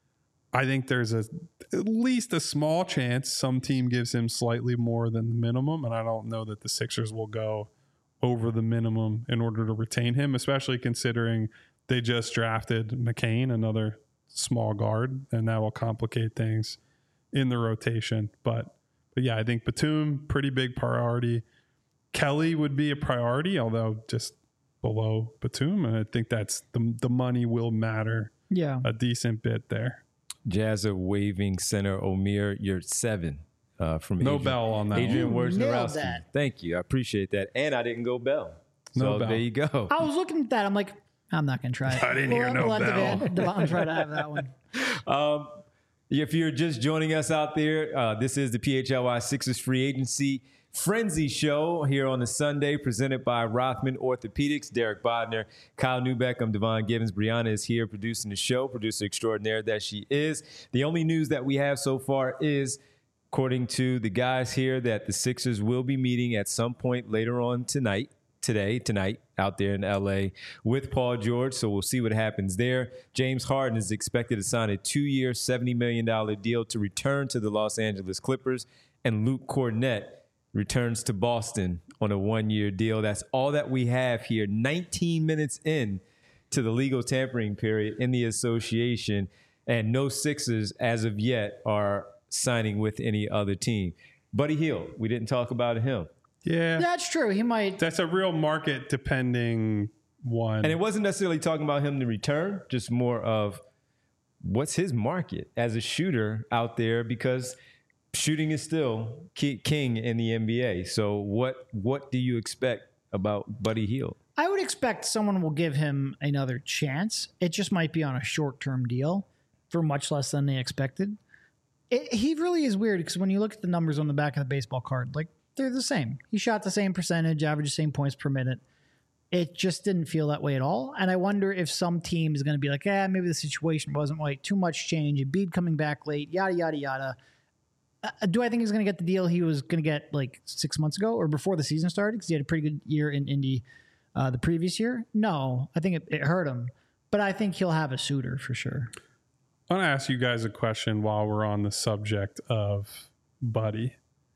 Speaker 2: I think there's a at least a small chance some team gives him slightly more than the minimum, and I don't know that the Sixers will go over the minimum in order to retain him, especially considering they just drafted McCain, another small guard, and that will complicate things in the rotation. But, but yeah, I think Batum, pretty big priority. Kelly would be a priority, although just below Batum, and I think that's the the money will matter
Speaker 3: yeah.
Speaker 2: a decent bit there.
Speaker 1: Jazz are waving center Omir. You're seven uh, from
Speaker 2: no
Speaker 1: Adrian,
Speaker 2: bell on that.
Speaker 1: Adrian Wojnarowski.
Speaker 3: That.
Speaker 1: Thank you. I appreciate that. And I didn't go bell. So
Speaker 2: no bell.
Speaker 1: There you go.
Speaker 3: I was looking at that. I'm like, I'm not going to try it.
Speaker 2: I didn't we'll, hear no
Speaker 3: we'll
Speaker 2: bell.
Speaker 3: Let Devon try to have that one.
Speaker 1: Um, if you're just joining us out there, uh, this is the P H L Y Sixers Free Agency Frenzy Show here on a Sunday, presented by Rothman Orthopedics. Derek Bodner, Kyle Newbeck, I'm Devon Givens. Brianna is here producing the show, producer extraordinaire that she is. The only news that we have so far is, according to the guys here, that the Sixers will be meeting at some point later on tonight, today, tonight, out there in L A with Paul George. So we'll see what happens there. James Harden is expected to sign a two-year, seventy million dollars deal to return to the Los Angeles Clippers, and Luke Kornet returns to Boston on a one-year deal. That's all that we have here. nineteen minutes in to the legal tampering period in the association, and no Sixers as of yet are signing with any other team. Buddy Hield, we didn't talk about him.
Speaker 2: Yeah,
Speaker 3: that's true. He might.
Speaker 2: That's a real market depending one.
Speaker 1: And it wasn't necessarily talking about him to return, just more of what's his market as a shooter out there, because shooting is still king in the N B A. So what what do you expect about Buddy Hield?
Speaker 3: I would expect someone will give him another chance. It just might be on a short-term deal for much less than they expected. It, he really is weird because when you look at the numbers on the back of the baseball card, like they're the same. He shot the same percentage, averaged the same points per minute. It just didn't feel that way at all. And I wonder if some team is going to be like, eh, maybe the situation wasn't right. Too much change. Embiid coming back late, yada, yada, yada. Uh, do I think he's going to get the deal he was going to get like six months ago or before the season started? Because he had a pretty good year in Indy uh, the previous year. No, I think it, it hurt him. But I think he'll have a suitor for sure.
Speaker 2: I want to ask you guys a question while we're on the subject of Buddy.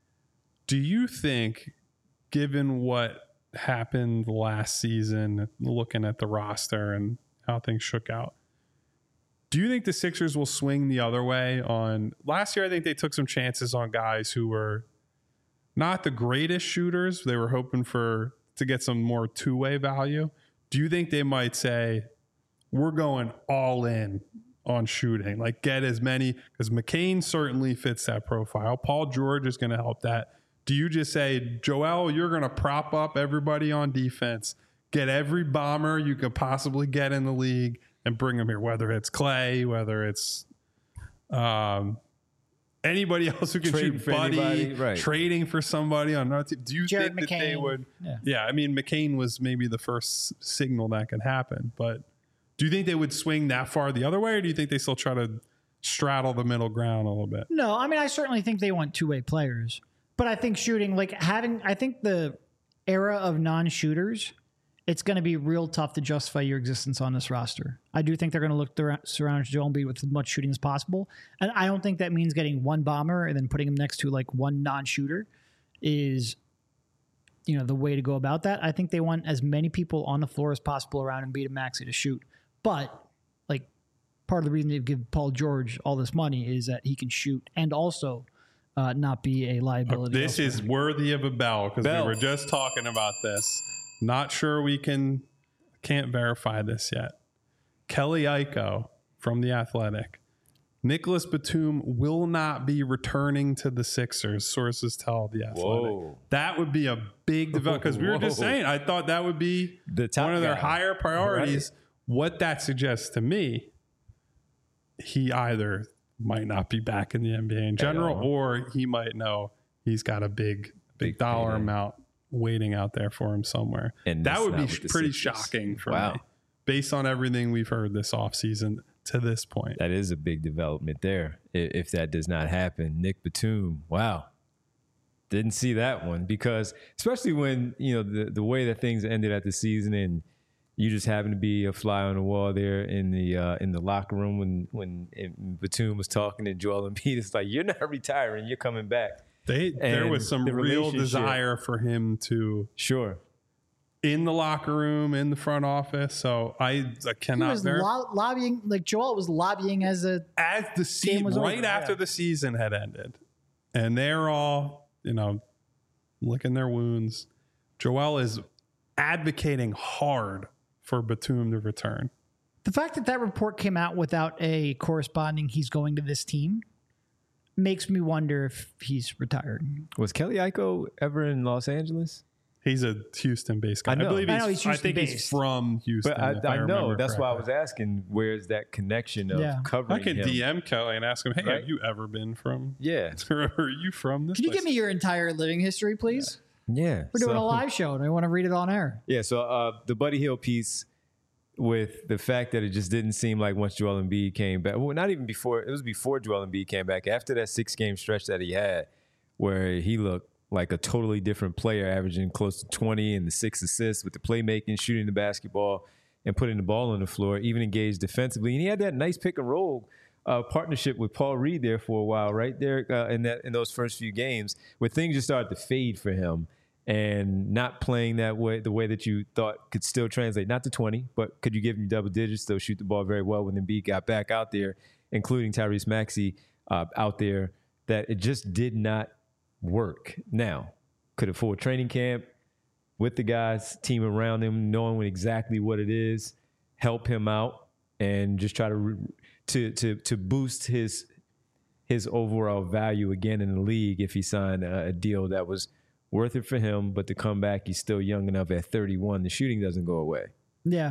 Speaker 2: Do you think, given what happened last season, looking at the roster and how things shook out, do you think the Sixers will swing the other way on last year? I think they took some chances on guys who were not the greatest shooters. They were hoping for to get some more two-way value. Do you think they might say, we're going all in on shooting, like get as many, because McCain certainly fits that profile. Paul George is going to help that. Do you just say, Joel, you're going to prop up everybody on defense, get every bomber you could possibly get in the league, and bring them here, whether it's Clay, whether it's um, anybody else who can
Speaker 1: Trading
Speaker 2: shoot Buddy,
Speaker 1: anybody, right.
Speaker 2: trading for somebody on another team. Do you
Speaker 3: Jared
Speaker 2: think
Speaker 3: McCain.
Speaker 2: that they would?
Speaker 3: Yeah.
Speaker 2: yeah, I mean, McCain was maybe the first signal that could happen, but do you think they would swing that far the other way, or do you think they still try to straddle the middle ground a little bit?
Speaker 3: No, I mean, I certainly think they want two-way players. But I think shooting, like having, I think the era of non-shooters it's going to be real tough to justify your existence on this roster. I do think they're going to look to surround Joel Embiid with as much shooting as possible. And I don't think that means getting one bomber and then putting him next to like one non-shooter is, you know, the way to go about that. I think they want as many people on the floor as possible around Embiid and Maxey to shoot. But like part of the reason they give Paul George all this money is that he can shoot and also uh, not be a liability.
Speaker 2: This elsewhere. Is worthy of a bell because we were just talking about this. Not sure we can, can't verify this yet. Kelly Iko from The Athletic. Nicholas Batum will not be returning to the Sixers, sources tell The Athletic. Whoa. That would be a big development because we were just saying, I thought that would be the top one of their guy. higher priorities. Right. What that suggests to me, he either might not be back in the N B A in general, or he might know he's got a big, big, big dollar payday. amount waiting out there for him somewhere. And that would be pretty Sixers. shocking for wow. me, based on everything we've heard this offseason to this point.
Speaker 1: That is a big development there. If that does not happen, Nick Batum, wow. Didn't see that one because especially when, you know, the, the way that things ended at the season and you just happen to be a fly on the wall there in the uh, in the locker room when, when Batum was talking to Joel Embiid. It's like, you're not retiring, you're coming back.
Speaker 2: They, there was some the real desire for him to
Speaker 1: sure
Speaker 2: in the locker room, in the front office. So I, I cannot.
Speaker 3: He was
Speaker 2: verify.
Speaker 3: lo- lobbying, like Joel was lobbying as a
Speaker 2: as the season right over, after yeah. the season had ended, and they're all you know licking their wounds. Joel is advocating hard for Batum to return.
Speaker 3: The fact that that report came out without a corresponding "he's going to this team" makes me wonder if he's retired.
Speaker 1: Was Kelly Iko ever in Los Angeles?
Speaker 2: He's a Houston-based guy. I, know. I believe he's, I, know he's I think he's from Houston.
Speaker 1: But I, I, I know. That's
Speaker 2: correctly.
Speaker 1: why I was asking, where's that connection of yeah. covering
Speaker 2: I can
Speaker 1: him?
Speaker 2: D M Kelly and ask him, hey, right? have you ever been from?
Speaker 1: Yeah.
Speaker 2: Are you from this
Speaker 3: Can
Speaker 2: place?
Speaker 3: you give me your entire living history, please?
Speaker 1: Yeah. yeah.
Speaker 3: We're doing
Speaker 1: so,
Speaker 3: a live show, and I want to read it on air.
Speaker 1: Yeah, so uh, the Buddy Hield piece with the fact that it just didn't seem like once Joel Embiid came back, well, not even before, it was before Joel Embiid came back, after that six-game stretch that he had where he looked like a totally different player, averaging close to twenty and the six assists with the playmaking, shooting the basketball, and putting the ball on the floor, even engaged defensively. And he had that nice pick and roll uh, partnership with Paul Reed there for a while, right there uh, in that in those first few games, where things just started to fade for him and not playing that way, the way that you thought could still translate, not to twenty, but could you give him double digits, still shoot the ball very well when Embiid got back out there, including Tyrese Maxey uh, out there, that it just did not work. Now, could a full training camp with the guys, team around him, knowing exactly what it is, help him out and just try to re- to to to boost his his overall value again in the league if he signed a, a deal that was worth it for him, but to come back, he's still young enough at thirty-one. The shooting doesn't go away.
Speaker 3: Yeah.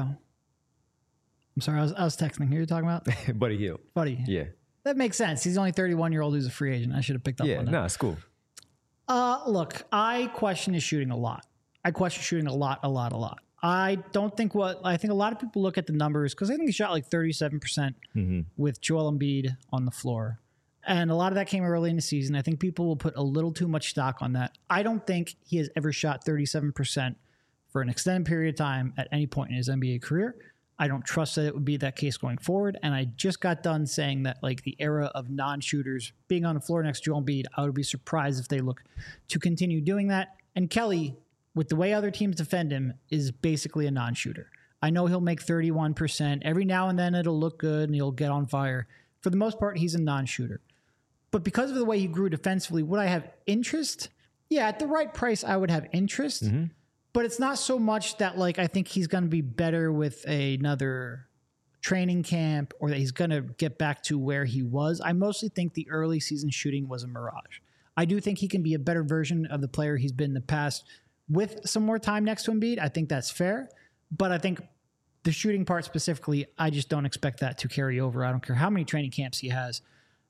Speaker 3: I'm sorry, I was, I was texting. Who are you talking about?
Speaker 1: Buddy Hield.
Speaker 3: Buddy.
Speaker 1: Yeah.
Speaker 3: That makes sense. He's only thirty-one-year-old who's a free agent. I should have picked up
Speaker 1: yeah,
Speaker 3: on that.
Speaker 1: Yeah, nah, it's cool.
Speaker 3: Uh, look, I question his shooting a lot. I question shooting a lot, a lot, a lot. I don't think what I think a lot of people look at the numbers because I think he shot like thirty-seven percent mm-hmm. with Joel Embiid on the floor. And a lot of that came early in the season. I think people will put a little too much stock on that. I don't think he has ever shot thirty-seven percent for an extended period of time at any point in his N B A career. I don't trust that it would be that case going forward. And I just got done saying that like the era of non-shooters being on the floor next to Joel Embiid, I would be surprised if they look to continue doing that. And Kelly, with the way other teams defend him, is basically a non-shooter. I know he'll make thirty-one percent. Every now and then it'll look good and he'll get on fire. For the most part, he's a non-shooter. But because of the way he grew defensively, would I have interest? Yeah, at the right price, I would have interest. Mm-hmm. But it's not so much that like I think he's going to be better with another training camp or that he's going to get back to where he was. I mostly think the early season shooting was a mirage. I do think he can be a better version of the player he's been in the past with some more time next to Embiid. I think that's fair. But I think the shooting part specifically, I just don't expect that to carry over. I don't care how many training camps he has.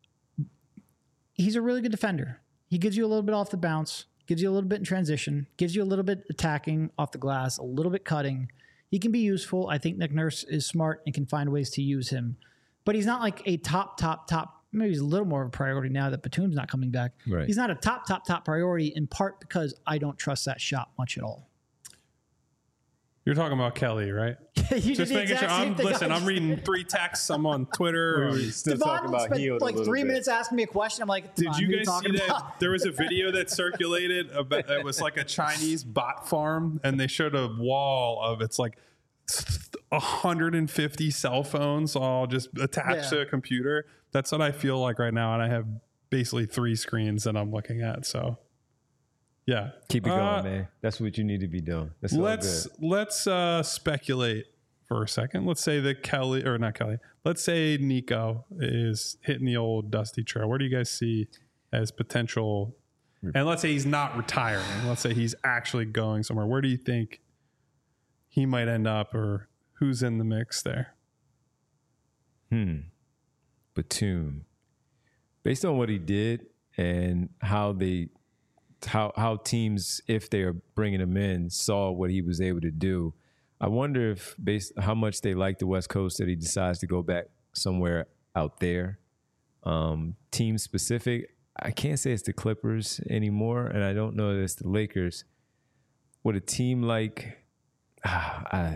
Speaker 3: He's a really good defender. He gives you a little bit off the bounce. Gives you a little bit in transition, gives you a little bit attacking off the glass, a little bit cutting. He can be useful. I think Nick Nurse is smart and can find ways to use him. But he's not like a top, top, top. Maybe he's a little more of a priority now that Batum's not coming back.
Speaker 1: Right.
Speaker 3: He's not a top, top, top priority in part because I don't trust that shot much at all.
Speaker 2: You're talking about Kelly, right?
Speaker 3: you
Speaker 2: Just
Speaker 3: did the
Speaker 2: making sure.
Speaker 3: exact same
Speaker 2: I'm,
Speaker 3: thing
Speaker 2: listen,
Speaker 3: I
Speaker 2: I'm
Speaker 3: just
Speaker 2: reading
Speaker 3: did.
Speaker 2: three texts. I'm on Twitter.
Speaker 1: We're still talking
Speaker 3: Devon
Speaker 1: about
Speaker 3: spent
Speaker 1: healed
Speaker 3: like
Speaker 1: a little
Speaker 3: three
Speaker 1: bit.
Speaker 3: minutes asking me a question. I'm like,
Speaker 2: Did
Speaker 3: Devon,
Speaker 2: you
Speaker 3: who are
Speaker 2: guys
Speaker 3: talking
Speaker 2: see that?
Speaker 3: about?
Speaker 2: There was a video that circulated about it was like a Chinese bot farm, and they showed a wall of it's like one hundred fifty cell phones all just attached
Speaker 3: Yeah.
Speaker 2: to a computer. That's what I feel like right now, and I have basically three screens that I'm looking at. So, yeah,
Speaker 1: Keep it going,
Speaker 2: Uh,
Speaker 1: man. That's what you need to be doing. That's all
Speaker 2: let's
Speaker 1: good.
Speaker 2: let's uh, speculate for a second. Let's say that Kelly or not Kelly. Let's say Nico is hitting the old dusty trail. Where do you guys see as potential? And let's say he's not retiring. Let's say he's actually going somewhere. Where do you think he might end up, or who's in the mix there?
Speaker 1: Hmm. Batum. Based on what he did and how they, how how teams, if they are bringing him in, saw what he was able to do. I wonder if based how much they like the West Coast that he decides to go back somewhere out there. Um, team specific, I can't say it's the Clippers anymore, and I don't know that it's the Lakers. Would a team like, ah, I,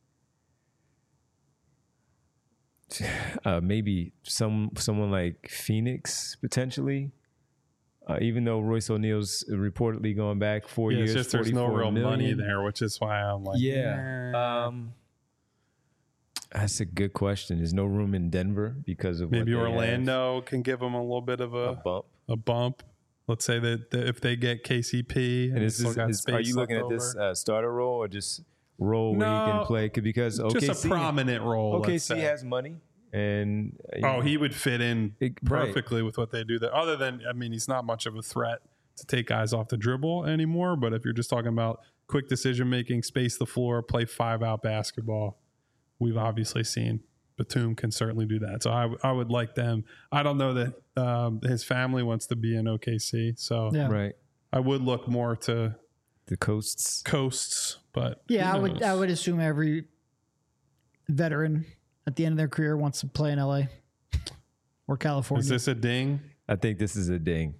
Speaker 1: uh, maybe some someone like Phoenix potentially, uh, even though Royce O'Neal's reportedly going back four
Speaker 2: Yeah,
Speaker 1: years,
Speaker 2: it's just there's no
Speaker 1: forty-four
Speaker 2: real money
Speaker 1: million.
Speaker 2: there, which is why I'm like,
Speaker 1: Yeah.
Speaker 2: eh.
Speaker 1: Um, that's a good question. There's no room in Denver because of what
Speaker 2: Maybe
Speaker 1: they have.
Speaker 2: Orlando can give them a little bit of
Speaker 1: a
Speaker 2: a,
Speaker 1: bump.
Speaker 2: a bump. Let's say that, that if they get K C P, and,
Speaker 1: And is
Speaker 2: still
Speaker 1: this,
Speaker 2: got
Speaker 1: is,
Speaker 2: space
Speaker 1: are you looking
Speaker 2: left
Speaker 1: at this
Speaker 2: over.
Speaker 1: uh, starter role or just role where he
Speaker 2: No,
Speaker 1: can play? Because O K C,
Speaker 2: just a prominent role?
Speaker 1: O K
Speaker 2: let's
Speaker 1: C
Speaker 2: say.
Speaker 1: has money, and uh, you
Speaker 2: Oh,
Speaker 1: know,
Speaker 2: he would fit in
Speaker 1: It- right.
Speaker 2: perfectly with what they do there. Other than, I mean, he's not much of a threat to take guys off the dribble anymore. But if you're just talking about quick decision making, space the floor, play five out basketball, we've obviously seen Batum can certainly do that. So I, I would like them. I don't know that um, his family wants to be in O K C, so
Speaker 3: Yeah.
Speaker 1: right
Speaker 2: I would look more to
Speaker 1: the coasts.
Speaker 2: coasts. But
Speaker 3: Yeah,
Speaker 2: who
Speaker 3: I would.
Speaker 2: knows?
Speaker 3: I would assume every veteran at the end of their career wants to play in L A or California.
Speaker 2: Is this a ding?
Speaker 1: I think this is a ding.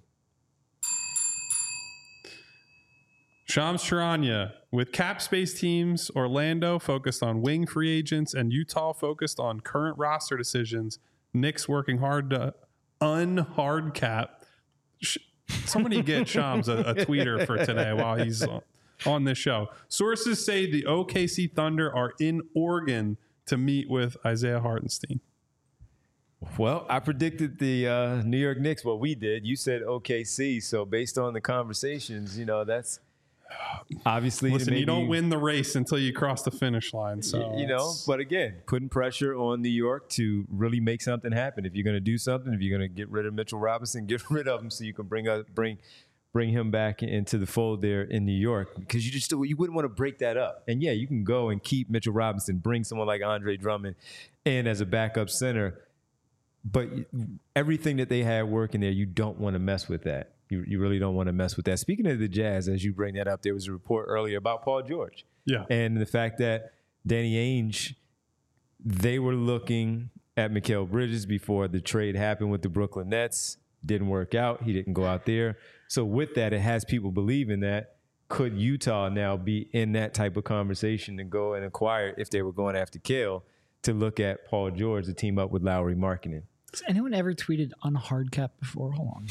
Speaker 2: Shams Charania, with cap space teams, Orlando focused on wing free agents and Utah focused on current roster decisions. Knicks working hard to unhard cap. Sh- Somebody get Shams a, a tweeter for today while he's on, on this show. Sources say the O K C Thunder are in Oregon to meet with Isaiah Hartenstein.
Speaker 1: Well, I predicted the uh, New York Knicks. What we did, you said O K C. So based on the conversations, you know, that's obviously to
Speaker 2: Listen, you
Speaker 1: maybe-
Speaker 2: don't win the race until you cross the finish line. So
Speaker 1: Y- you know,
Speaker 2: it's-
Speaker 1: but again, putting pressure on New York to really make something happen. If you're going to do something, if you're going to get rid of Mitchell Robinson, get rid of him so you can bring up bring bring him back into the fold there in New York, because you just you wouldn't want to break that up. And yeah, you can go and keep Mitchell Robinson, bring someone like Andre Drummond in as a backup center, but everything that they had working there, you don't want to mess with that. You, you really don't want to mess with that. Speaking of the Jazz, as you bring that up, there was a report earlier about Paul George.
Speaker 2: yeah.
Speaker 1: And the fact that Danny Ainge, they were looking at Mikal Bridges before the trade happened with the Brooklyn Nets. Didn't work out. He didn't go out there. So with that, it has people believing that could Utah now be in that type of conversation to go and acquire, if they were going after Kale, to look at Paul George to team up with Lowry Markkinen.
Speaker 3: Has anyone ever tweeted on hard cap before? Hold on.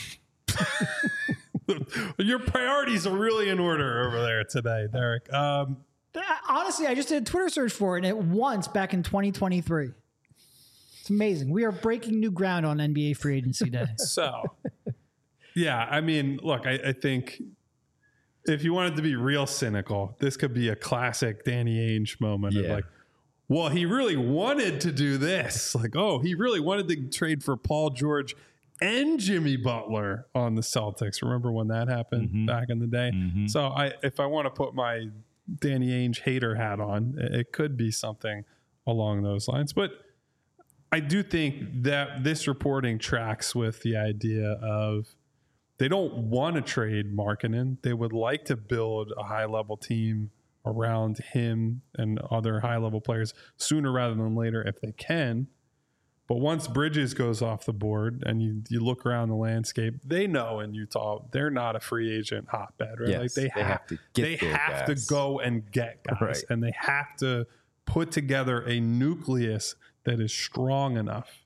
Speaker 2: Your priorities are really in order over there today, Derek. Um,
Speaker 3: Honestly, I just did a Twitter search for it, and it once back in twenty twenty-three. It's amazing. We are breaking new ground on N B A free agency day.
Speaker 2: so, yeah, I mean, look, I, I think if you wanted to be real cynical, this could be a classic Danny Ainge moment of
Speaker 1: Yeah.
Speaker 2: like, well, he really wanted to do this. Like, oh, he really wanted to trade for Paul George and Jimmy Butler on the Celtics. Remember when that happened
Speaker 1: Mhm.
Speaker 2: back in the day?
Speaker 1: Mhm.
Speaker 2: So I, if I want to put my Danny Ainge hater hat on, it it could be something along those lines. But I do think that this reporting tracks with the idea of they don't want to trade Markkinen. They would like to build a high-level team around him and other high-level players sooner rather than later if they can. But once Bridges goes off the board and you, you look around the landscape, they know in Utah they're not a free agent hotbed, right?
Speaker 1: Yes,
Speaker 2: like they,
Speaker 1: they
Speaker 2: have,
Speaker 1: have to get
Speaker 2: they
Speaker 1: their
Speaker 2: have
Speaker 1: guys.
Speaker 2: to go and get guys,
Speaker 1: Right.
Speaker 2: and they have to put together a nucleus that is strong enough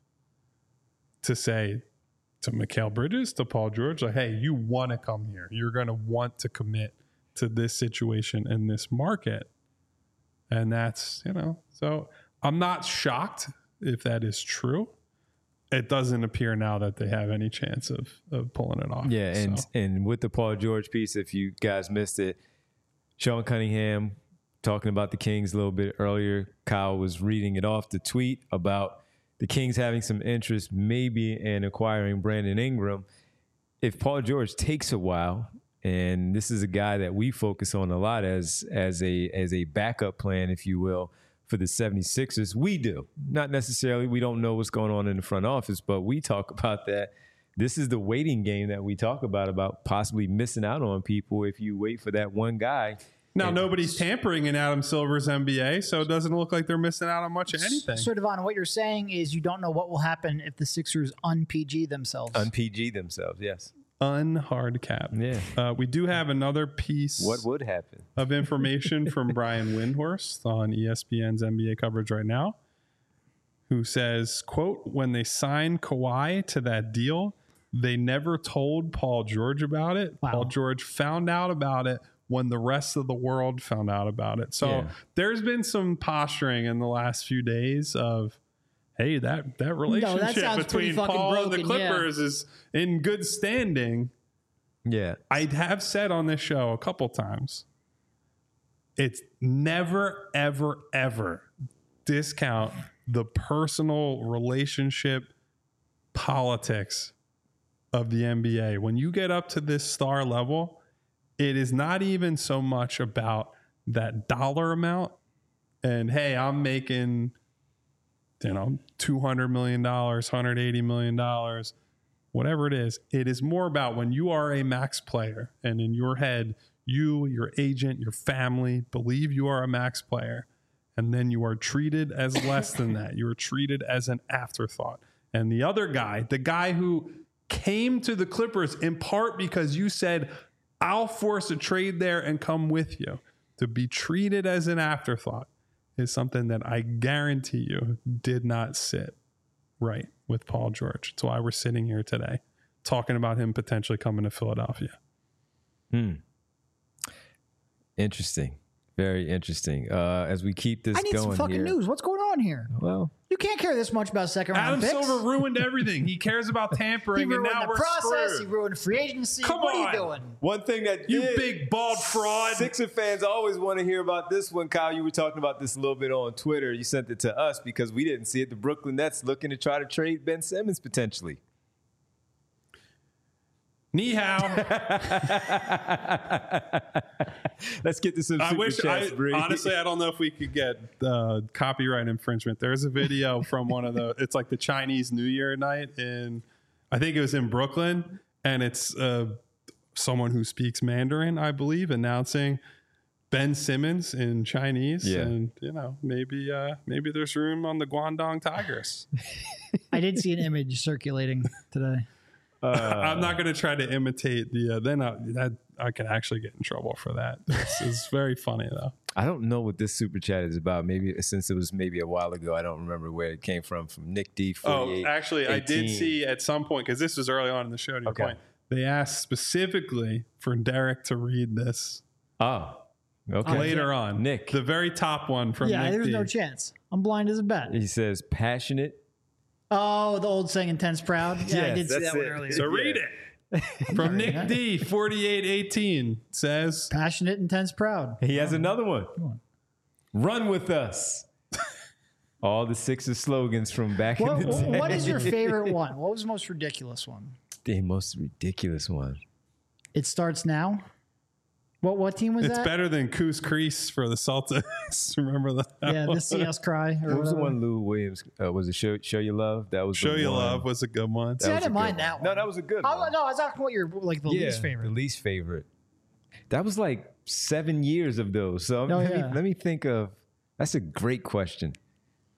Speaker 2: to say to Mikal Bridges, to Paul George, like, hey, you want to come here. You're going to want to commit to this situation in this market. And that's, you know, so I'm not shocked if that is true. It doesn't appear now that they have any chance of of pulling it off.
Speaker 1: Yeah, and
Speaker 2: so.
Speaker 1: and with the Paul George piece, if you guys missed it, Sean Cunningham talking about the Kings a little bit earlier. Kyle was reading it off the tweet about the Kings having some interest maybe in acquiring Brandon Ingram. If Paul George takes a while, and this is a guy that we focus on a lot as as a as a backup plan, if you will, for the seventy-sixers, we do. Not necessarily. We don't know what's going on in the front office, but we talk about that. This is the waiting game that we talk about, about possibly missing out on people if you wait for that one guy.
Speaker 2: Now,
Speaker 1: And
Speaker 2: nobody's tampering in Adam Silver's N B A, so it doesn't look like they're missing out on much of anything.
Speaker 3: So, Devon, what you're saying is you don't know what will happen if the Sixers un-P G themselves.
Speaker 1: Un-P G themselves, yes.
Speaker 2: Unhard cap.
Speaker 1: Yeah.
Speaker 2: Uh, we do have another piece
Speaker 1: What would happen?
Speaker 2: of information from Brian Windhorst on E S P N's N B A coverage right now, who says, quote, when they signed Kawhi to that deal, they never told Paul George about it.
Speaker 3: Wow.
Speaker 2: Paul George found out about it when the rest of the world found out about it. So
Speaker 1: Yeah.
Speaker 2: there's been some posturing in the last few days of, hey, that, that relationship
Speaker 3: sounds pretty
Speaker 2: between
Speaker 3: fucking
Speaker 2: Paul and the
Speaker 3: broken, yeah.
Speaker 2: Clippers is in good standing.
Speaker 1: Yeah.
Speaker 2: I have said on this show a couple times, it's never, ever, ever discount the personal relationship politics of the N B A. When you get up to this star level, it is not even so much about that dollar amount and, hey, I'm making, you know, two hundred million dollars, one hundred eighty million dollars, whatever it is. It is more about when you are a max player and in your head, you, your agent, your family believe you are a max player, and then you are treated as less than that. You are treated as an afterthought. And the other guy, the guy who came to the Clippers in part because you said, I'll force a trade there and come with you, to be treated as an afterthought is something that I guarantee you did not sit right with Paul George. That's why we're sitting here today talking about him potentially coming to Philadelphia.
Speaker 1: Hmm. Interesting. Very interesting. Uh, as we keep this
Speaker 3: I need
Speaker 1: going
Speaker 3: some fucking
Speaker 1: here,
Speaker 3: news. What's going on here?
Speaker 1: Well,
Speaker 3: You can't care this much about second
Speaker 2: Adam
Speaker 3: round picks.
Speaker 2: Silver ruined everything. He cares about
Speaker 3: He
Speaker 2: tampering, and
Speaker 3: ruined
Speaker 2: now
Speaker 3: the
Speaker 2: we're
Speaker 3: process.
Speaker 2: screwed.
Speaker 3: He ruined free agency.
Speaker 2: Come
Speaker 3: what
Speaker 2: on.
Speaker 3: are you doing?
Speaker 1: one thing that
Speaker 2: You
Speaker 1: did-
Speaker 2: big bald fraud.
Speaker 1: Sixer fans always want to hear about this one, Kyle. You were talking about this a little bit on Twitter. You sent it to us because we didn't see it. The Brooklyn Nets looking to try to trade Ben Simmons potentially.
Speaker 2: Ni hao.
Speaker 1: Let's get to some
Speaker 2: I
Speaker 1: super
Speaker 2: wish.
Speaker 1: chats,
Speaker 2: I,
Speaker 1: Bree.
Speaker 2: honestly, I don't know if we could get uh, copyright infringement. There's a video from one of the. It's like the Chinese New Year night in, I think it was in Brooklyn, and it's uh, someone who speaks Mandarin, I believe, announcing Ben Simmons in Chinese.
Speaker 1: Yeah.
Speaker 2: And you know, maybe uh, maybe there's room on the Guangdong Tigers.
Speaker 3: I did see an image circulating today.
Speaker 1: Uh,
Speaker 2: I'm not going to try to imitate the. Uh, then I, that I could actually get in trouble for that. It's, it's very funny though.
Speaker 1: I don't know what this super chat is about. Maybe since it was maybe a while ago, I don't remember where it came from. From Nick D.
Speaker 2: Oh,
Speaker 1: forty-eight
Speaker 2: actually, I did
Speaker 1: eighteen.
Speaker 2: see at some point, because this was early on in the show, to your
Speaker 1: Okay.
Speaker 2: point, they asked specifically for Derek to read this
Speaker 1: Oh, okay.
Speaker 2: later on.
Speaker 1: Nick.
Speaker 2: The very top one from
Speaker 3: Yeah,
Speaker 2: Nick
Speaker 3: there's
Speaker 2: D.
Speaker 3: no chance. I'm blind as a bat.
Speaker 1: He says passionate.
Speaker 3: Oh, the old saying, intense proud. Yeah, I
Speaker 1: Yes,
Speaker 3: did see
Speaker 1: that's
Speaker 3: that one
Speaker 1: it.
Speaker 3: earlier.
Speaker 2: So read it. From Nick
Speaker 3: that.
Speaker 2: D, forty-eight eighteen says,
Speaker 3: Passionate, intense, proud.
Speaker 1: He has another one.
Speaker 3: on.
Speaker 1: Run with us. All the Sixers slogans from back
Speaker 3: What,
Speaker 1: in the day.
Speaker 3: what is your favorite one? What was the most ridiculous one?
Speaker 1: The most ridiculous one.
Speaker 3: It starts now. What what team was
Speaker 2: it's
Speaker 3: that?
Speaker 2: better than Coos Crease for the Celtics. Remember that?
Speaker 3: Yeah, the See Us Cry. Or
Speaker 1: What was the
Speaker 3: whatever.
Speaker 1: one Lou Williams? Uh, was it Show, Show You Love? That was
Speaker 2: Show
Speaker 1: the
Speaker 2: You
Speaker 1: one.
Speaker 2: Love was a good one.
Speaker 3: See, I
Speaker 1: was a
Speaker 3: didn't mind
Speaker 1: good
Speaker 3: that
Speaker 1: one.
Speaker 3: one.
Speaker 1: No, that was a good
Speaker 3: I,
Speaker 1: one.
Speaker 3: no, I was asking what your like the least favorite.
Speaker 1: The least favorite. That was like seven years of those. So
Speaker 3: Oh,
Speaker 1: let,
Speaker 3: yeah.
Speaker 1: me, let me think of. That's a great question.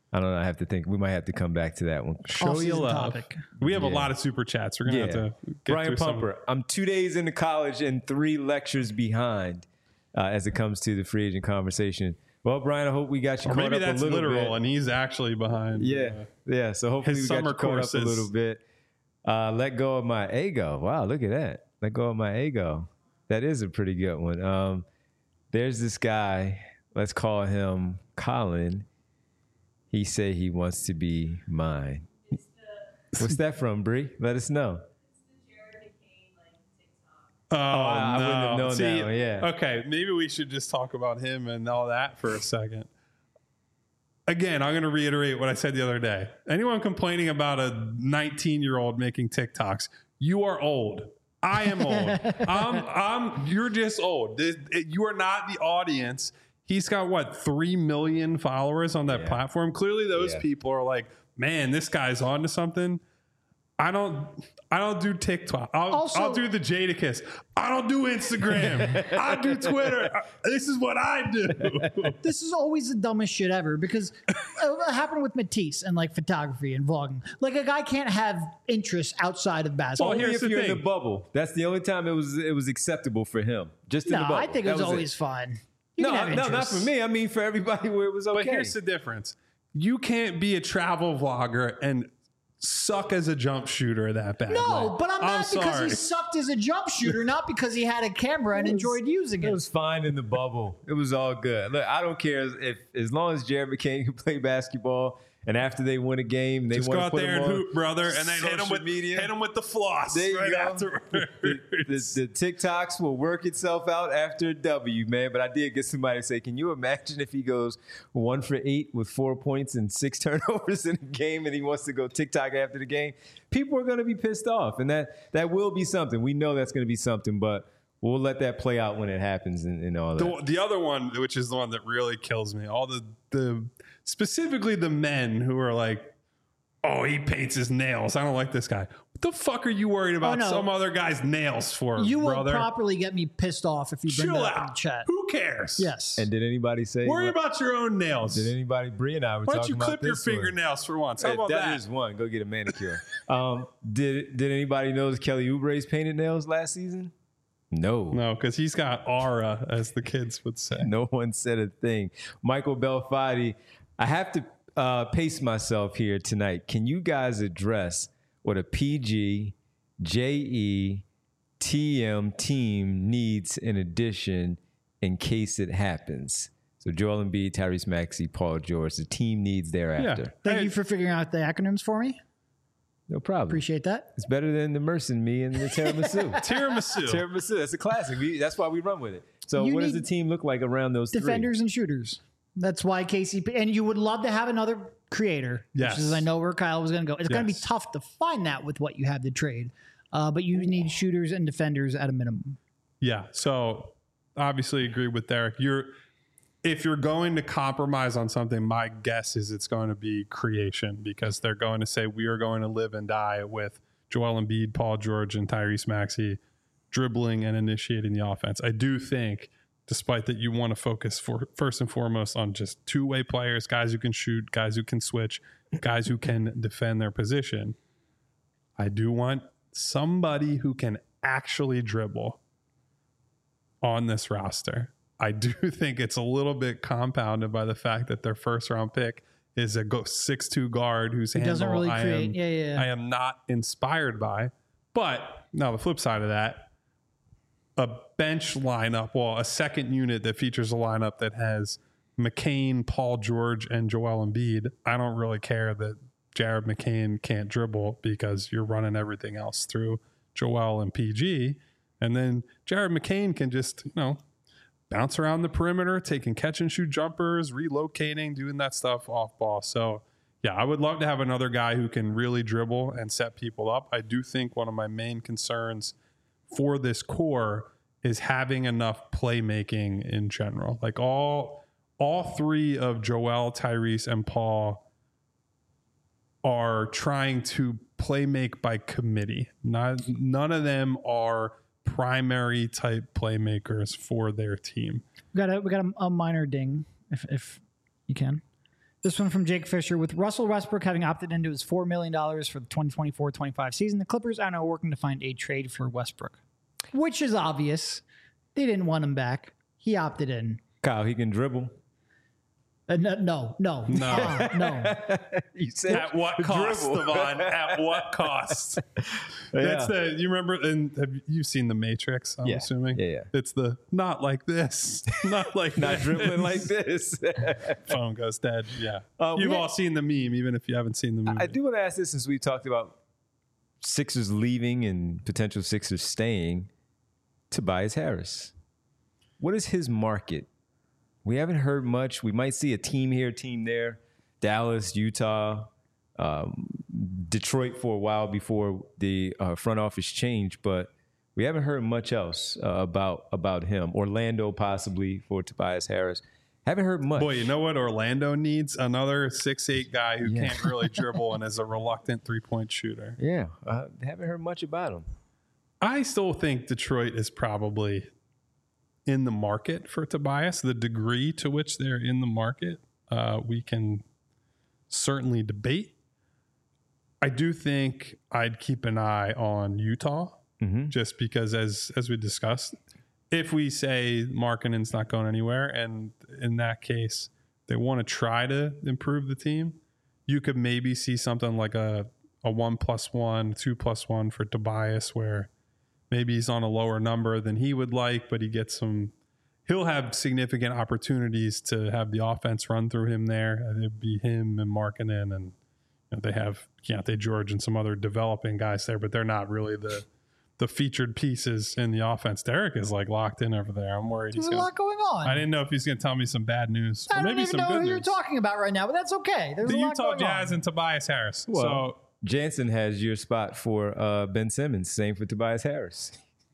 Speaker 1: I don't know. I have to think. We might have to come back to that one.
Speaker 2: Show you
Speaker 3: Off-season
Speaker 2: love.
Speaker 3: topic.
Speaker 2: We have a
Speaker 1: Yeah.
Speaker 2: lot of super chats. We're gonna
Speaker 1: Yeah.
Speaker 2: have to get
Speaker 1: Brian
Speaker 2: through some.
Speaker 1: Pumper, I'm two days into college and three lectures behind uh, as it comes to the free agent conversation. Well, Brian, I hope we got you
Speaker 2: Or
Speaker 1: caught
Speaker 2: maybe
Speaker 1: up
Speaker 2: that's
Speaker 1: a little
Speaker 2: literal,
Speaker 1: bit.
Speaker 2: and he's actually behind.
Speaker 1: Yeah,
Speaker 2: uh,
Speaker 1: yeah. So hopefully
Speaker 2: his
Speaker 1: we got
Speaker 2: summer
Speaker 1: you caught up a
Speaker 2: courses.
Speaker 1: little bit. Uh, let go of my ego. Wow, look at that. Let go of my ego. That is a pretty good one. Um, there's this guy. Let's call him Colin. He said he wants to be mine. What's that from, Bree? Let us know.
Speaker 2: Oh,
Speaker 1: I- I
Speaker 2: no.
Speaker 1: wouldn't have known
Speaker 2: See,
Speaker 1: that one, yeah.
Speaker 2: Okay, maybe we should just talk about him and all that for a second. Again, I'm going to reiterate what I said the other day. Anyone complaining about a nineteen-year-old making TikToks, you are old. I am old. I'm, I'm, you're just old. This- it- You are not the audience. He's got, what, three million followers on that
Speaker 1: Yeah.
Speaker 2: platform? Clearly, those
Speaker 1: Yeah.
Speaker 2: people are like, man, this guy's on to something. I don't I don't do TikTok. I'll,
Speaker 3: Also-
Speaker 2: I'll do the Jadakiss. I don't do Instagram. I do Twitter. This is what I do.
Speaker 3: This is always the dumbest shit ever because it happened with Matisse and like photography and vlogging. Like a guy can't have interests outside of basketball.
Speaker 2: Well,
Speaker 1: Only
Speaker 2: here's
Speaker 1: if
Speaker 2: the
Speaker 1: you're in
Speaker 2: thing.
Speaker 1: the bubble. That's the only time it was it was acceptable for him. Just in
Speaker 3: no,
Speaker 1: the bubble.
Speaker 3: I think it
Speaker 1: That
Speaker 3: was, always
Speaker 1: it.
Speaker 3: fun. You
Speaker 1: No,
Speaker 3: can have
Speaker 1: no, not
Speaker 3: interests.
Speaker 1: for me. I mean, for everybody where it was okay.
Speaker 2: But here's the difference. You can't be a travel vlogger and suck as a jump shooter that bad.
Speaker 3: No, but I'm mad because
Speaker 2: sorry.
Speaker 3: he sucked as a jump shooter, not because he had a camera and enjoyed using
Speaker 1: It
Speaker 3: it.
Speaker 1: was fine in the bubble. It was all good. Look, I don't care if as long as Jared McCain can play basketball, and after they win a game, they
Speaker 2: Just
Speaker 1: want
Speaker 2: go
Speaker 1: to
Speaker 2: out
Speaker 1: put
Speaker 2: there
Speaker 1: him
Speaker 2: and
Speaker 1: on
Speaker 2: hoop, brother, and then hit him
Speaker 1: social
Speaker 2: with
Speaker 1: media.
Speaker 2: hit him with the floss
Speaker 1: There you
Speaker 2: right
Speaker 1: go.
Speaker 2: afterwards.
Speaker 1: The, the, the TikToks will work itself out after a W, man. But I did get somebody to say, can you imagine if he goes one for eight with four points and six turnovers in a game and he wants to go TikTok after the game? People are going to be pissed off. And that, that will be something. We know that's going to be something, but we'll let that play out when it happens and, and all that.
Speaker 2: The, the other one, which is the one that really kills me, all the the specifically the men who are like, oh, he paints his nails. I don't like this guy. What the fuck are you worried about
Speaker 3: Oh, no.
Speaker 2: some other guy's nails for,
Speaker 3: You will
Speaker 2: brother?
Speaker 3: properly get me pissed off if you bring
Speaker 2: Chill
Speaker 3: that up in the
Speaker 2: out.
Speaker 3: chat.
Speaker 2: Who cares?
Speaker 3: Yes.
Speaker 1: And did anybody say?
Speaker 2: Worry
Speaker 1: what-
Speaker 2: about your own nails.
Speaker 1: Did anybody? Bree and I were
Speaker 2: Why don't
Speaker 1: talking
Speaker 2: you
Speaker 1: about
Speaker 2: clip your
Speaker 1: this one.
Speaker 2: fingernails for once? How
Speaker 1: If
Speaker 2: about
Speaker 1: that
Speaker 2: that?
Speaker 1: is one. Go get a manicure. um, did Did anybody notice Kelly Oubre's painted nails last season? No.
Speaker 2: No, because he's got aura, as the kids would say.
Speaker 1: No one said a thing. Michael Belfatti, I have to uh, pace myself here tonight. Can you guys address what a P G, J E, T M team needs in addition in case it happens? So Joel Embiid, Tyrese Maxey, Paul George, the team needs thereafter.
Speaker 3: Thank
Speaker 2: Hey,
Speaker 3: you for figuring out the acronyms for me.
Speaker 1: No problem.
Speaker 3: Appreciate that.
Speaker 1: It's better than the Merce and Me and the tiramisu.
Speaker 2: Tiramisu.
Speaker 1: Tiramisu, that's a classic. We, that's why we run with it. So
Speaker 3: You
Speaker 1: what does
Speaker 3: need
Speaker 1: the team look like around those
Speaker 3: Defenders and shooters. That's why K C P. And you would love to have another creator,
Speaker 2: Yes.
Speaker 3: which is I know where Kyle was going to go. It's going to be
Speaker 2: Yes.
Speaker 3: tough to find that with what you have to trade, uh, but you need shooters and defenders at a minimum.
Speaker 2: Yeah. So obviously agree with Derek. You're if you're going to compromise on something, my guess is it's going to be creation because they're going to say we are going to live and die with Joel Embiid, Paul George, and Tyrese Maxey dribbling and initiating the offense. I do think, despite that, you want to focus for first and foremost on just two-way players, guys who can shoot, guys who can switch, guys who can defend their position. I do want somebody who can actually dribble on this roster. I do think it's a little bit compounded by the fact that their first round pick is a six two guard whose
Speaker 3: He
Speaker 2: handle
Speaker 3: doesn't really
Speaker 2: I
Speaker 3: create.
Speaker 2: am,
Speaker 3: yeah, yeah. yeah.
Speaker 2: I am not inspired by. But now the flip side of that, a bench lineup, well, a second unit that features a lineup that has McCain, Paul George, and Joel Embiid. I don't really care that Jared McCain can't dribble because you're running everything else through Joel and P G. And then Jared McCain can just, you know, bounce around the perimeter, taking catch and shoot jumpers, relocating, doing that stuff off ball. So, yeah, I would love to have another guy who can really dribble and set people up. I do think one of my main concerns for this core is having enough playmaking in general. Like all all three of Joel, Tyrese, and Paul are trying to play make by committee. Not none of them are primary type playmakers for their team.
Speaker 3: We got a we got a, a minor ding if if you can. This one from Jake Fisher. With Russell Westbrook having opted into his four million dollars for the twenty twenty-four twenty-five season, the Clippers are now working to find a trade for Westbrook, which is obvious. They didn't want him back. He opted in.
Speaker 1: Kyle, he can dribble.
Speaker 3: Uh, no, no, no,
Speaker 2: No.
Speaker 3: uh, no.
Speaker 1: You said
Speaker 2: At what cost,
Speaker 1: dribble.
Speaker 2: Devon? At what cost? That's the, you remember, and have you seen The Matrix, I'm
Speaker 1: Yeah.
Speaker 2: assuming?
Speaker 1: Yeah, yeah.
Speaker 2: It's the, not like this. Not like
Speaker 1: Not
Speaker 2: this.
Speaker 1: dribbling like this.
Speaker 2: Phone goes dead. Yeah.
Speaker 1: Uh,
Speaker 2: You've
Speaker 1: we-
Speaker 2: all seen the meme, even if you haven't seen the movie.
Speaker 1: I do want to ask this since we talked about Sixers leaving and potential Sixers staying. Tobias Harris. What is his market? We haven't heard much. We might see a team here, team there. Dallas, Utah, um, Detroit for a while before the uh, front office changed, but we haven't heard much else uh, about about him. Orlando possibly for Tobias Harris. Haven't heard much.
Speaker 2: Boy, you know what Orlando needs? Another six eight guy who
Speaker 1: Yeah.
Speaker 2: can't really dribble and is a reluctant three-point shooter.
Speaker 1: Yeah, uh, haven't heard much about him.
Speaker 2: I still think Detroit is probably in the market for Tobias. The degree to which they're in the market, uh, we can certainly debate. I do think I'd keep an eye on Utah,
Speaker 1: Mm-hmm.
Speaker 2: just because, as as we discussed, if we say Markkanen's not going anywhere, and in that case they want to try to improve the team, you could maybe see something like a a one plus one, two plus one for Tobias, where maybe he's on a lower number than he would like, but he gets some. He'll have significant opportunities to have the offense run through him there. It'd be him and Markkanen, and you know, they have Keontae George and some other developing guys there, but they're not really the the featured pieces in the offense. Derek is like locked in over there. I'm worried
Speaker 3: There's
Speaker 2: he's
Speaker 3: a
Speaker 2: gonna,
Speaker 3: lot going on.
Speaker 2: I didn't know if he's going to tell me some bad news
Speaker 3: I
Speaker 2: or
Speaker 3: don't
Speaker 2: maybe
Speaker 3: even
Speaker 2: some
Speaker 3: know
Speaker 2: good
Speaker 3: who you're
Speaker 2: news.
Speaker 3: talking about right now, but that's okay. There's
Speaker 2: The
Speaker 3: a lot
Speaker 2: Utah
Speaker 3: going
Speaker 2: Jazz
Speaker 3: on.
Speaker 2: and Tobias Harris.
Speaker 1: Well,
Speaker 2: so
Speaker 1: Jansen has your spot for uh, Ben Simmons. Same for Tobias Harris.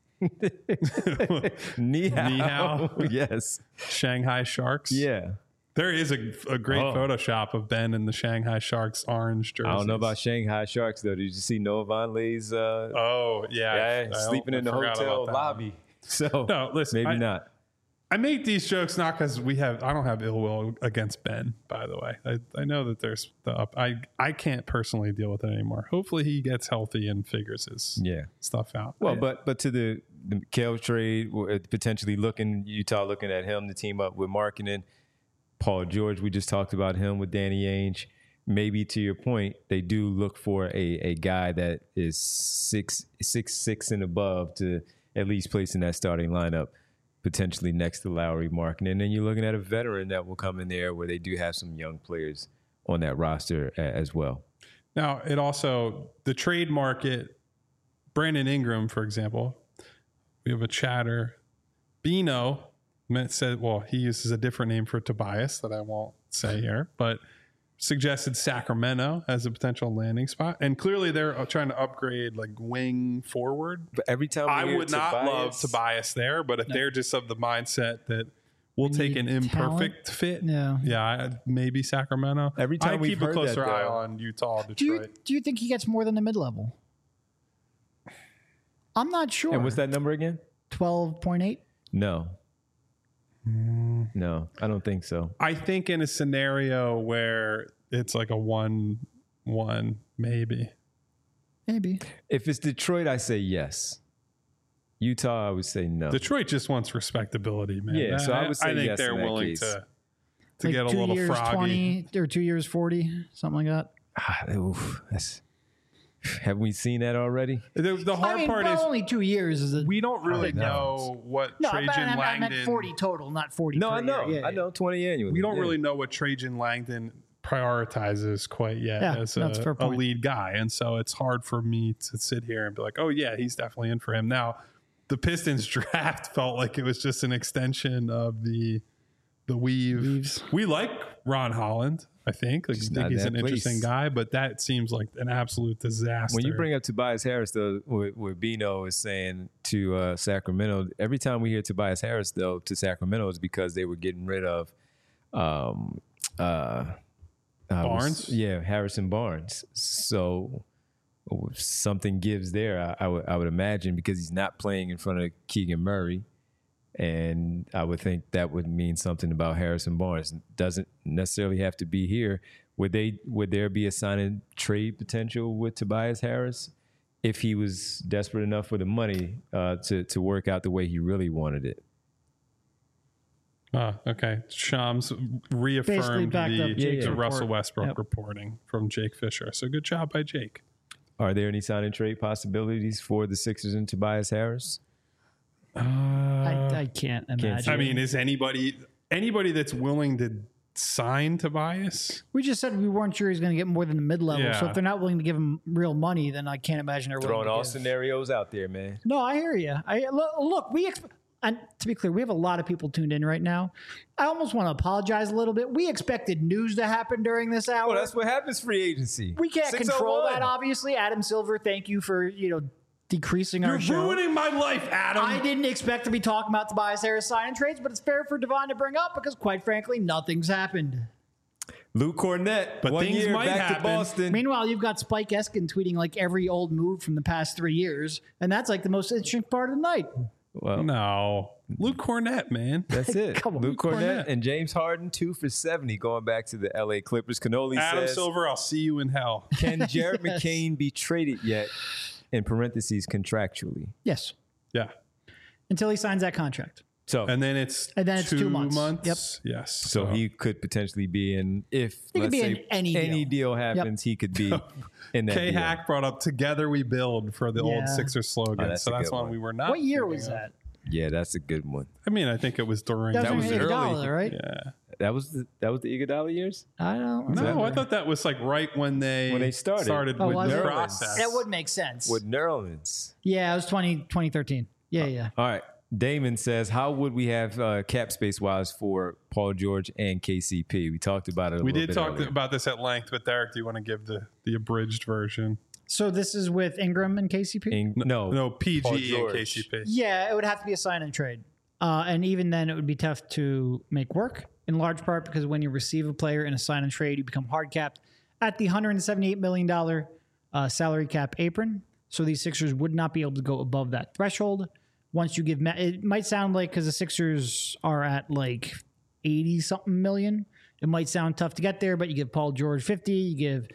Speaker 1: Ni hao.
Speaker 2: Ni hao.
Speaker 1: Yes.
Speaker 2: Shanghai Sharks.
Speaker 1: Yeah.
Speaker 2: There is a, a great
Speaker 1: Oh.
Speaker 2: Photoshop of Ben in the Shanghai Sharks orange jersey.
Speaker 1: I don't know about Shanghai Sharks, though. Did you see Noah Vonleh's uh,
Speaker 2: Oh, yeah.
Speaker 1: yeah,
Speaker 2: I- I-
Speaker 1: sleeping
Speaker 2: I
Speaker 1: in the
Speaker 2: forgot
Speaker 1: hotel
Speaker 2: about that
Speaker 1: lobby? So
Speaker 2: No, listen,
Speaker 1: maybe
Speaker 2: I-
Speaker 1: not.
Speaker 2: I make these jokes not because we have. I don't have ill will against Ben. By the way, I, I know that there's the up. I I can't personally deal with it anymore. Hopefully, he gets healthy and figures his
Speaker 1: Yeah.
Speaker 2: stuff out.
Speaker 1: Well,
Speaker 2: I-
Speaker 1: but but to the, the Kel trade, uh, potentially looking, Utah looking at him to team up with Markkanen. Paul George, we just talked about him with Danny Ainge. Maybe to your point, they do look for a, a guy that is six six six and above to at least place in that starting lineup, potentially next to Lowry, Markkanen. And then you're looking at a veteran that will come in there where they do have some young players on that roster a- as well.
Speaker 2: now it also the trade market. Brandon Ingram, for example, we have a chatter. Bino said, well, he uses a different name for Tobias that I won't say here, but suggested Sacramento as a potential landing spot. And clearly they're trying to upgrade like wing forward.
Speaker 1: But every time we
Speaker 2: I
Speaker 1: hear
Speaker 2: would not
Speaker 1: Tobias-
Speaker 2: love Tobias there, but if they're just of the mindset that we'll take an
Speaker 3: need
Speaker 2: imperfect fit,
Speaker 3: Yeah.
Speaker 2: yeah, I, maybe Sacramento.
Speaker 1: Every time
Speaker 2: I'd
Speaker 1: we've
Speaker 2: keep a
Speaker 1: heard
Speaker 2: closer
Speaker 1: that,
Speaker 2: eye
Speaker 1: though.
Speaker 2: on Utah, Detroit.
Speaker 3: Do you do you think he gets more than the mid level? I'm not sure.
Speaker 1: And what's that number again?
Speaker 3: twelve point eight?
Speaker 1: No. No, I don't think so.
Speaker 2: I think in a scenario where it's like a one one, maybe.
Speaker 3: Maybe.
Speaker 1: If it's Detroit, I say yes. Utah, I would say no.
Speaker 2: Detroit just wants respectability, man.
Speaker 1: Yeah, so I would say
Speaker 2: I think
Speaker 1: yes
Speaker 2: they're
Speaker 1: in that
Speaker 2: willing
Speaker 1: case.
Speaker 2: to to
Speaker 3: Like
Speaker 2: get a
Speaker 3: two
Speaker 2: little
Speaker 3: years
Speaker 2: froggy.
Speaker 3: twenty or two years forty, something like that.
Speaker 1: Ah, oof, that's, have we seen that already?
Speaker 2: The, the hard
Speaker 3: I mean,
Speaker 2: part
Speaker 3: well,
Speaker 2: is
Speaker 3: only two years is a
Speaker 2: we don't really
Speaker 1: know.
Speaker 2: know what
Speaker 3: no. But
Speaker 2: Trajan
Speaker 3: I, I meant
Speaker 2: Langdon.
Speaker 3: forty total, not forty.
Speaker 1: No,
Speaker 3: per
Speaker 1: I know.
Speaker 3: year. Yeah,
Speaker 1: I know. twenty annually.
Speaker 2: We don't
Speaker 1: Yeah.
Speaker 2: really know what Trajan Langdon prioritizes quite yet
Speaker 3: Yeah,
Speaker 2: as
Speaker 3: that's a
Speaker 2: a,
Speaker 3: fair
Speaker 2: a
Speaker 3: point.
Speaker 2: lead guy, and so it's hard for me to sit here and be like, "Oh yeah, he's definitely in for him." Now, the Pistons draft felt like it was just an extension of the the weave.
Speaker 3: Weaves.
Speaker 2: We like Ron Holland. I think. Like, I
Speaker 1: Just
Speaker 2: think
Speaker 1: not
Speaker 2: he's
Speaker 1: in
Speaker 2: an
Speaker 1: that
Speaker 2: interesting
Speaker 1: place.
Speaker 2: guy, but that seems like an absolute disaster.
Speaker 1: When you bring up Tobias Harris, though, what, what Bino is saying to uh, Sacramento, every time we hear Tobias Harris, though, to Sacramento is because they were getting rid of um, uh, uh,
Speaker 2: Barnes?
Speaker 1: yeah, Harrison Barnes. So something gives there, I, I, would, I would imagine, because he's not playing in front of Keegan Murray. And I would think that would mean something about Harrison Barnes. Doesn't necessarily have to be here. Would they? Would there be a sign and trade potential with Tobias Harris if he was desperate enough for the money uh, to to work out the way he really wanted it?
Speaker 2: Oh, okay. Shams reaffirmed
Speaker 3: backed
Speaker 2: the,
Speaker 3: up Jake's
Speaker 2: the
Speaker 3: report.
Speaker 2: Russell Westbrook
Speaker 3: Yep.
Speaker 2: reporting from Jake Fisher. So good job by Jake.
Speaker 1: Are there any sign and trade possibilities for the Sixers and Tobias Harris?
Speaker 2: Uh,
Speaker 3: I, I can't imagine.
Speaker 2: I mean, is anybody anybody that's willing to sign Tobias?
Speaker 3: we just said we weren't sure he's going to get more than the mid level. So
Speaker 2: Yeah.
Speaker 3: if they're not willing to give him real money, then I can't imagine they're
Speaker 1: Throwing
Speaker 3: willing
Speaker 1: all
Speaker 3: to give.
Speaker 1: scenarios out there, man.
Speaker 3: No, I hear you. I look, look we ex- and to be clear, we have a lot of people tuned in right now. I almost want to apologize a little bit. We expected news to happen during this hour.
Speaker 1: Well, that's what happens free agency.
Speaker 3: we can't control
Speaker 1: six oh one.
Speaker 3: that, obviously. Adam Silver, thank you for you know decreasing our
Speaker 2: You're
Speaker 3: show.
Speaker 2: ruining my life, Adam.
Speaker 3: I didn't expect to be talking about Tobias Harris sign and trades, but it's fair for Devon to bring up because, quite frankly, nothing's happened.
Speaker 1: Luke Cornett,
Speaker 2: But
Speaker 1: one
Speaker 2: things
Speaker 1: year
Speaker 2: might
Speaker 1: back
Speaker 2: happen.
Speaker 1: to Boston.
Speaker 3: Meanwhile, you've got Spike Eskin tweeting like every old move from the past three years, and that's like the most interesting part of the night.
Speaker 1: Well,
Speaker 2: No. Luke Cornett, man.
Speaker 1: that's it.
Speaker 3: Come on,
Speaker 1: Luke
Speaker 3: Luke
Speaker 1: Cornett
Speaker 2: Cornett.
Speaker 1: and James Harden, two for seventy, going back to the L A Clippers. Canoli
Speaker 2: Adam
Speaker 1: says,
Speaker 2: Silver, I'll see you in hell.
Speaker 1: can Jared
Speaker 3: Yes.
Speaker 1: McCain be traded yet? In parentheses, contractually.
Speaker 3: Yes,
Speaker 2: Yeah.
Speaker 3: until he signs that contract.
Speaker 1: So,
Speaker 2: And then it's
Speaker 3: And then it's two months.
Speaker 2: Yes.
Speaker 1: so he could potentially be in, if
Speaker 3: He could
Speaker 1: let's
Speaker 3: be
Speaker 1: say
Speaker 3: in any deal.
Speaker 1: happens, he could be in that
Speaker 2: K
Speaker 1: deal.
Speaker 2: Hack brought up "Together We Build" for the
Speaker 3: Yeah.
Speaker 2: old Sixers slogan.
Speaker 1: Oh, that's
Speaker 2: so
Speaker 1: a
Speaker 2: that's
Speaker 1: good
Speaker 2: one
Speaker 1: one.
Speaker 2: we were not.
Speaker 3: What year
Speaker 2: thinking
Speaker 3: was
Speaker 2: of.
Speaker 3: that?
Speaker 1: Yeah, that's a good one.
Speaker 2: I mean, I think it was during.
Speaker 3: That,
Speaker 1: That
Speaker 3: was,
Speaker 1: was
Speaker 3: when
Speaker 1: early.
Speaker 3: Iguodala, right?
Speaker 2: Yeah.
Speaker 1: That was the that was the Iguodala years.
Speaker 3: I don't
Speaker 2: No,
Speaker 3: remember.
Speaker 2: I thought that was like right when they
Speaker 1: When they started.
Speaker 3: Oh,
Speaker 2: with
Speaker 3: was
Speaker 2: the
Speaker 3: it?
Speaker 2: process.
Speaker 3: That would make sense.
Speaker 1: With Nerlens.
Speaker 3: Yeah, it was twenty, twenty thirteen. Yeah, yeah.
Speaker 1: All right. Damon says, how would we have uh, cap space wise for Paul George and K C P? We talked about it a
Speaker 2: We
Speaker 1: little
Speaker 2: did
Speaker 1: bit
Speaker 2: talk
Speaker 1: earlier.
Speaker 2: about this at length, but Derek, do you want to give the the abridged version?
Speaker 3: So this is with Ingram and K C P?
Speaker 1: In- no,
Speaker 2: No,
Speaker 1: Paul
Speaker 2: P G and
Speaker 1: George.
Speaker 2: K C P.
Speaker 3: Yeah, it would have to be a sign and trade. Uh, and even then, it would be tough to make work, in large part because when you receive a player in a sign and trade, you become hard capped at the one hundred seventy-eight million dollars uh, salary cap apron. So these Sixers would not be able to go above that threshold. Once you give, ma- it might sound like because the Sixers are at like eighty something million, it might sound tough to get there, but you give Paul George fifty, you give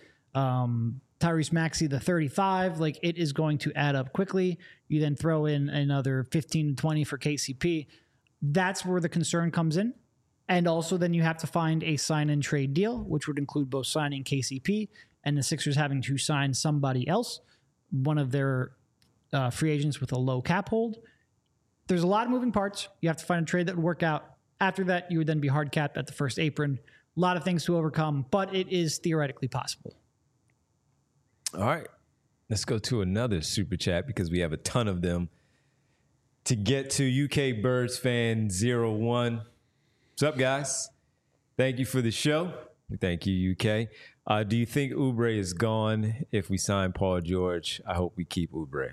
Speaker 3: um, Tyrese Maxey the thirty-five, like it is going to add up quickly. You then throw in another fifteen to twenty for K C P. That's where the concern comes in. And also then you have to find a sign and trade deal, which would include both signing K C P and the Sixers having to sign somebody else, one of their uh, free agents with a low cap hold. There's a lot of moving parts. You have to find a trade that would work out. After that, you would then be hard capped at the first apron. A lot of things to overcome, but it is theoretically possible.
Speaker 1: All right. Let's go to another super chat because we have a ton of them. To get to U K Birds fan zero one. What's up, guys? Thank you for the show. Thank you, U K. Uh, do you think Oubre is gone if we sign Paul George? I hope we keep Oubre.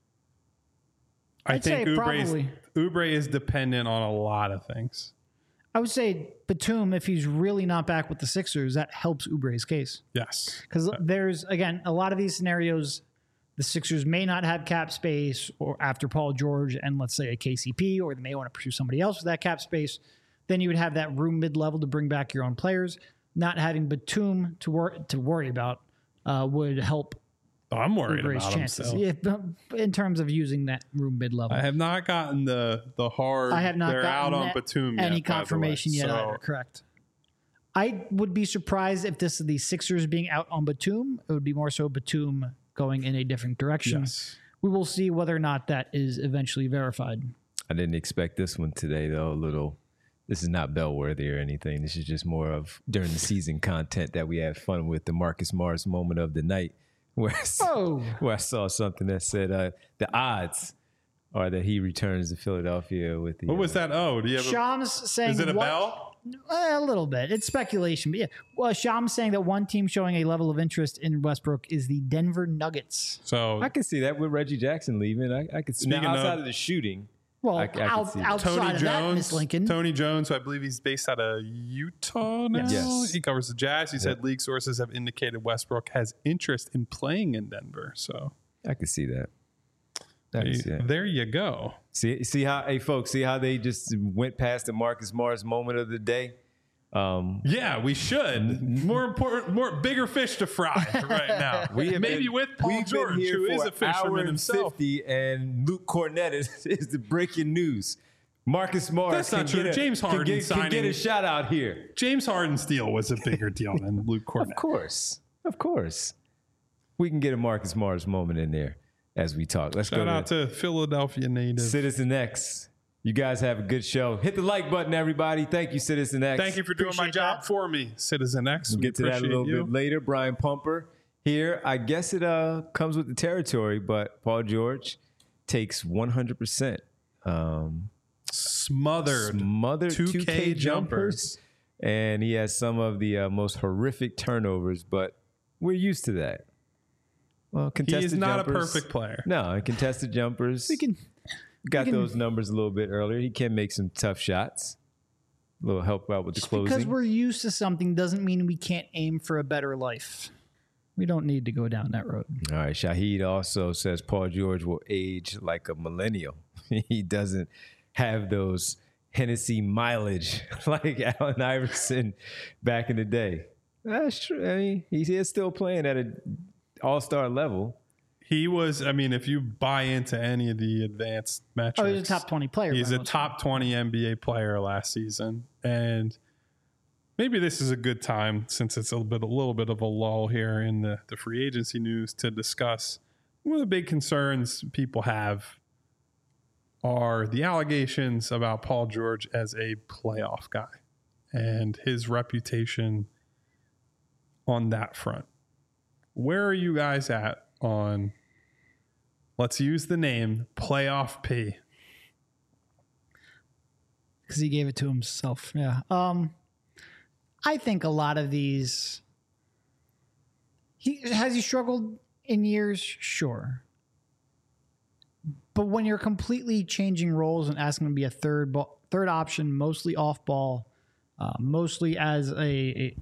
Speaker 2: I
Speaker 3: I'd
Speaker 2: think
Speaker 3: say
Speaker 2: Oubre is,
Speaker 3: probably.
Speaker 2: Oubre is dependent on a lot of things.
Speaker 3: I would say Batum, if he's really not back with the Sixers, that helps Oubre's case.
Speaker 2: Yes.
Speaker 3: Because there's, again, a lot of these scenarios, the Sixers may not have cap space or after Paul George and let's say a K C P, or they may want to pursue somebody else with that cap space. Then you would have that room mid-level to bring back your own players. Not having Batum to, wor- to worry about uh, would help
Speaker 2: Oh, I'm worried
Speaker 3: Oubre's
Speaker 2: about him
Speaker 3: chances.
Speaker 2: still.
Speaker 3: Yeah, but in terms of using that room mid-level.
Speaker 2: I have not gotten the the hard.
Speaker 3: I have not
Speaker 2: They're out
Speaker 3: gotten
Speaker 2: on Batum yet,
Speaker 3: any
Speaker 2: by the way.
Speaker 3: confirmation yet
Speaker 2: So,
Speaker 3: either. Correct. I would be surprised if this is the Sixers being out on Batum. It would be more so Batum going in a different direction.
Speaker 2: Yes.
Speaker 3: We will see whether or not that is eventually verified.
Speaker 1: I didn't expect this one today, though. A little. This is not bellworthy or anything. This is just more of during the season content that we have fun with. The Marcus Morris moment of the night, where I saw,
Speaker 3: Oh,
Speaker 1: where I saw something that said uh, the odds are that he returns to Philadelphia with the.
Speaker 2: What was
Speaker 1: uh,
Speaker 2: that? Oh, do you have? A,
Speaker 3: Shams saying
Speaker 2: is it a
Speaker 3: what-
Speaker 2: bell?
Speaker 3: Uh, a little bit. It's speculation, but yeah. Well, Shams saying that one team showing a level of interest in Westbrook is the Denver Nuggets.
Speaker 2: So
Speaker 1: I can see that with Reggie Jackson leaving. I, I could see
Speaker 2: Speaking
Speaker 1: now, outside
Speaker 2: of-
Speaker 1: of the shooting.
Speaker 3: Well,
Speaker 1: I- I can
Speaker 3: out,
Speaker 1: see that.
Speaker 3: outside
Speaker 2: Tony
Speaker 3: of that, Miss
Speaker 2: Jones,
Speaker 3: Lincoln.
Speaker 2: Tony Jones, who I believe he's based out of Utah now.
Speaker 1: Yes.
Speaker 2: He covers the Jazz. He said league sources have indicated Westbrook has interest in playing in Denver. So
Speaker 1: I could see that. Nice,
Speaker 2: Hey,
Speaker 1: yeah.
Speaker 2: There you go.
Speaker 1: See, see how, hey, folks, see how they just went past the Marcus Morris moment of the day? Um,
Speaker 2: Yeah, we should. More important, more bigger fish to fry right now.
Speaker 1: we have
Speaker 2: Maybe
Speaker 1: been,
Speaker 2: with Paul
Speaker 1: we've
Speaker 2: George,
Speaker 1: been here
Speaker 2: who
Speaker 1: for
Speaker 2: is a
Speaker 1: an hour
Speaker 2: fisherman
Speaker 1: and
Speaker 2: himself.
Speaker 1: fifty, and Luke Cornett is, is the breaking news. Marcus Morris
Speaker 2: That's not
Speaker 1: can
Speaker 2: true.
Speaker 1: Get a,
Speaker 2: James
Speaker 1: can
Speaker 2: Harden
Speaker 1: get, can get a
Speaker 2: signing-
Speaker 1: shout out here.
Speaker 2: James Harden's deal was a bigger deal than Luke Cornett.
Speaker 1: Of course, of course, we can get a Marcus Morris moment in there as we talk. Let's
Speaker 2: Shout
Speaker 1: go
Speaker 2: out
Speaker 1: to
Speaker 2: to Philadelphia native.
Speaker 1: Citizen X. You guys have a good show. Hit the like button, everybody. Thank you, Citizen X.
Speaker 2: Thank you for doing my
Speaker 3: Appreciate
Speaker 2: job
Speaker 3: that.
Speaker 2: for me, Citizen X.
Speaker 1: We'll
Speaker 2: We
Speaker 1: get to that a
Speaker 2: appreciate
Speaker 1: little
Speaker 2: you.
Speaker 1: bit later. Brian Pumper here. I guess it uh, comes with the territory, but Paul George takes one hundred percent. Um,
Speaker 2: Smothered.
Speaker 1: smothered
Speaker 2: two K
Speaker 1: two K
Speaker 2: jumpers.
Speaker 1: jumpers. And he has some of the uh, most horrific turnovers, but we're used to that. Well,
Speaker 2: He
Speaker 1: contested
Speaker 2: is not
Speaker 1: jumpers,
Speaker 2: a perfect player.
Speaker 1: No, contested jumpers.
Speaker 3: We can
Speaker 1: got
Speaker 3: we can-
Speaker 1: those numbers a little bit earlier. He can make some tough shots. A little help out with the
Speaker 3: just
Speaker 1: closing.
Speaker 3: because we're used to something doesn't mean we can't aim for a better life. We don't need to go down that road.
Speaker 1: All right. Shahid also says Paul George will age like a millennial. He doesn't have those Hennessy mileage like Allen Iverson back in the day. That's true. I mean, he is still playing at an all-star level.
Speaker 2: He was, I mean, if you buy into any of the advanced metrics.
Speaker 3: Oh, he's a top twenty player.
Speaker 2: He's
Speaker 3: by
Speaker 2: a
Speaker 3: most
Speaker 2: top twenty N B A player last season. And maybe this is a good time, since it's a little bit, a little bit of a lull here in the, the free agency news, to discuss one of the big concerns people have are the allegations about Paul George as a playoff guy and his reputation on that front. Where are you guys at on, let's use the name Playoff P?
Speaker 3: because he gave it to himself. Yeah. Um, I think a lot of these. He has he struggled in years, sure. But when you're completely changing roles and asking him to be a third ball, third option, mostly off ball, uh, mostly as a, a,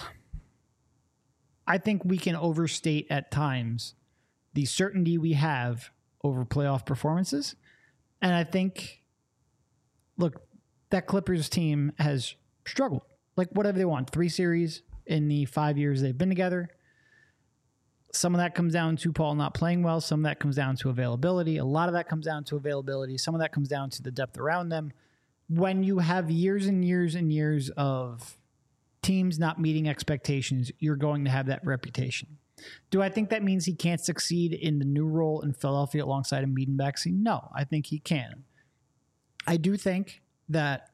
Speaker 3: I think we can overstate at times the certainty we have over playoff performances, and I think, look, that Clippers team has struggled. Like, whatever they want, three series in the five years they've been together. Some of that comes down to Paul not playing well. Some of that comes down to availability. A lot of that comes down to availability. Some of that comes down to the depth around them. When you have years and years and years of teams not meeting expectations, you're going to have that reputation. Do I think that means he can't succeed in the new role in Philadelphia alongside a Mead Baxi? No, I think he can. I do think that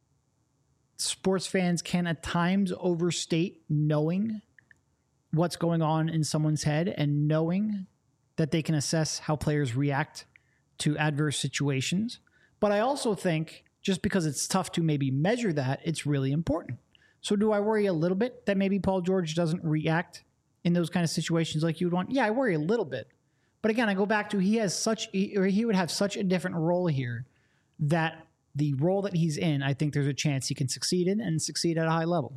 Speaker 3: sports fans can at times overstate knowing what's going on in someone's head and knowing that they can assess how players react to adverse situations. But I also think just because it's tough to maybe measure that, it's really important. So do I worry a little bit that maybe Paul George doesn't react in those kind of situations like you would want? Yeah, I worry a little bit. But again, I go back to he has such, or he would have such a different role here that the role that he's in, I think there's a chance he can succeed in and succeed at a high level.